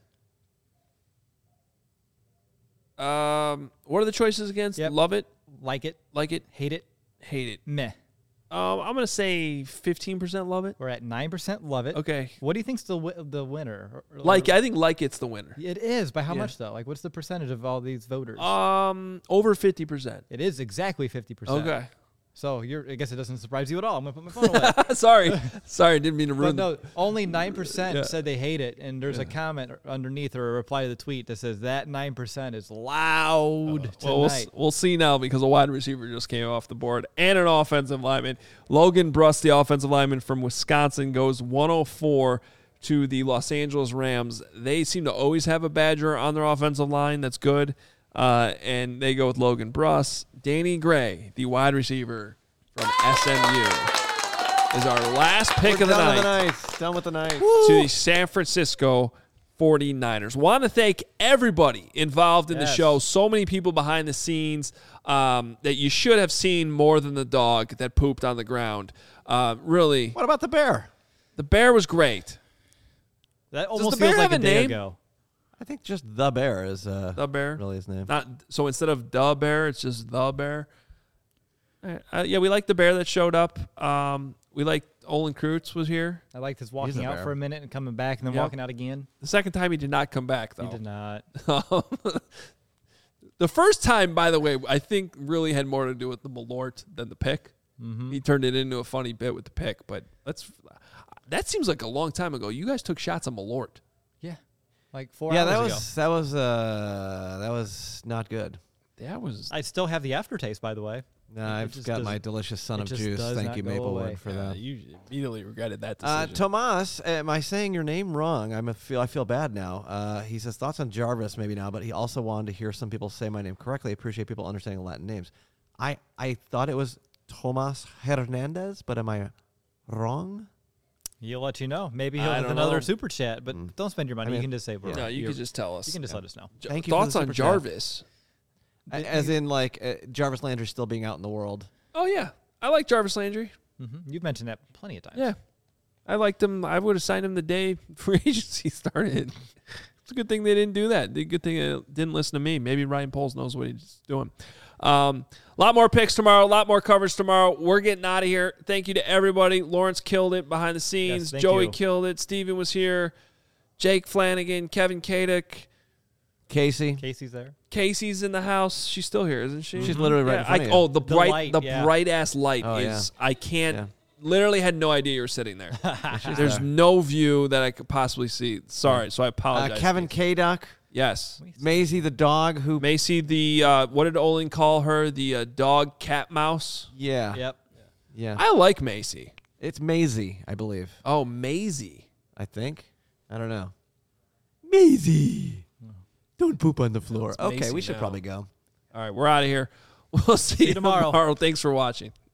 Um, what are the choices again? Yep. Love it, Like it, like it, hate it, hate it. meh. Um, I'm gonna say fifteen percent love it. We're at nine percent love it. Okay. What do you think's the wi- the winner? Or- or- Like I think like it's the winner. It is. By how Yeah. much, though? Like, what's the percentage of all these voters? Um, over fifty percent. It is exactly fifty percent. Okay. So you're. I guess it doesn't surprise you at all. I'm going to put my phone away. Sorry. Sorry, didn't mean to But ruin no, only nine percent Yeah. said they hate it. And there's a comment underneath or a reply to the tweet that says that nine percent is loud tonight. Well, we'll, s- we'll see now because a wide receiver just came off the board and an offensive lineman. Logan Bruss, the offensive lineman from Wisconsin, goes one oh four to the Los Angeles Rams. They seem to always have a Badger on their offensive line. That's good. Uh, and they go with Logan Bruss. Danny Gray, the wide receiver from S M U, is our last pick We're of the done night. With the night. Done with the night. To the San Francisco forty-niners. Want to thank everybody involved in Yes. the show. So many people behind the scenes um, that you should have seen more than the dog that pooped on the ground. Uh, really, What about the bear? the bear was great. That the almost bear feels like have a a day name? ago. I think just the bear is uh, The bear. really his name. Not so instead of the bear, it's just the bear. Uh, yeah, we like the bear that showed up. Um, we like Olin Kreutz was here. I liked his walking a out bear. for a minute and coming back and then Yep. walking out again. The second time he did not come back though. He did not. The first time, by the way, I think really had more to do with the Malort than the pick. Mm-hmm. He turned it into a funny bit with the pick, but that's that seems like a long time ago. You guys took shots on Malort. Yeah. Like four yeah, hours that ago. was that was uh, that was not good. That was I still have the aftertaste, by the way. No, It I've just got my doesn't- delicious son it of just juice. does Thank not you, go Maplewood, away. for uh, that. you immediately regretted that Uh, decision. Tomas, am I saying your name wrong? I'm a feel I feel bad now. Uh, he says thoughts on Jarvis maybe now, but he also wanted to hear some people say my name correctly. I appreciate people understanding Latin names. I I thought it was Tomas Hernandez, but am I wrong? He'll let you know. Maybe he'll I have don't another know. super chat, but Mm. don't spend your money. I mean, you can just say we're no, you you're- could just tell us. You can just Yeah. let us know. J- Thank you for Thoughts the on super chat. Jarvis? A- As in, like, uh, Jarvis Landry still being out in the world. Oh yeah, I like Jarvis Landry. Mm-hmm. You've mentioned that plenty of times. Yeah, I liked him. I would have signed him the day free agency started. It's a good thing they didn't do that. The good thing they didn't listen to me. Maybe Ryan Poles knows what he's doing. Um, a lot more picks tomorrow. A lot more coverage tomorrow. We're getting out of here. Thank you to everybody. Lawrence killed it behind the scenes. Yes, thank Joey you. killed it. Steven was here. Jake Flanagan, Kevin Kadek. Casey. Casey's there. Casey's in the house. She's still here, isn't she? She's literally right Yeah, in front I, of you. oh, the The bright, light, the yeah. bright ass light Oh, is. I can't. Yeah. Literally had no idea you were sitting there. There's there. no view that I could possibly see. Sorry, so I Uh, apologize. Kevin Kadok. Yes. Maisie the dog who. Macy, the uh, what did Olin call her? The uh, dog, cat, mouse. Yeah. Yep. Yeah. I like Macy. It's Maisie, I believe. Oh, Maisie. I think. I don't know. Maisie. Don't poop on the floor. It's Okay, Maisie we should now. probably go. All right, we're out of here. We'll see, you tomorrow. tomorrow. Thanks for watching.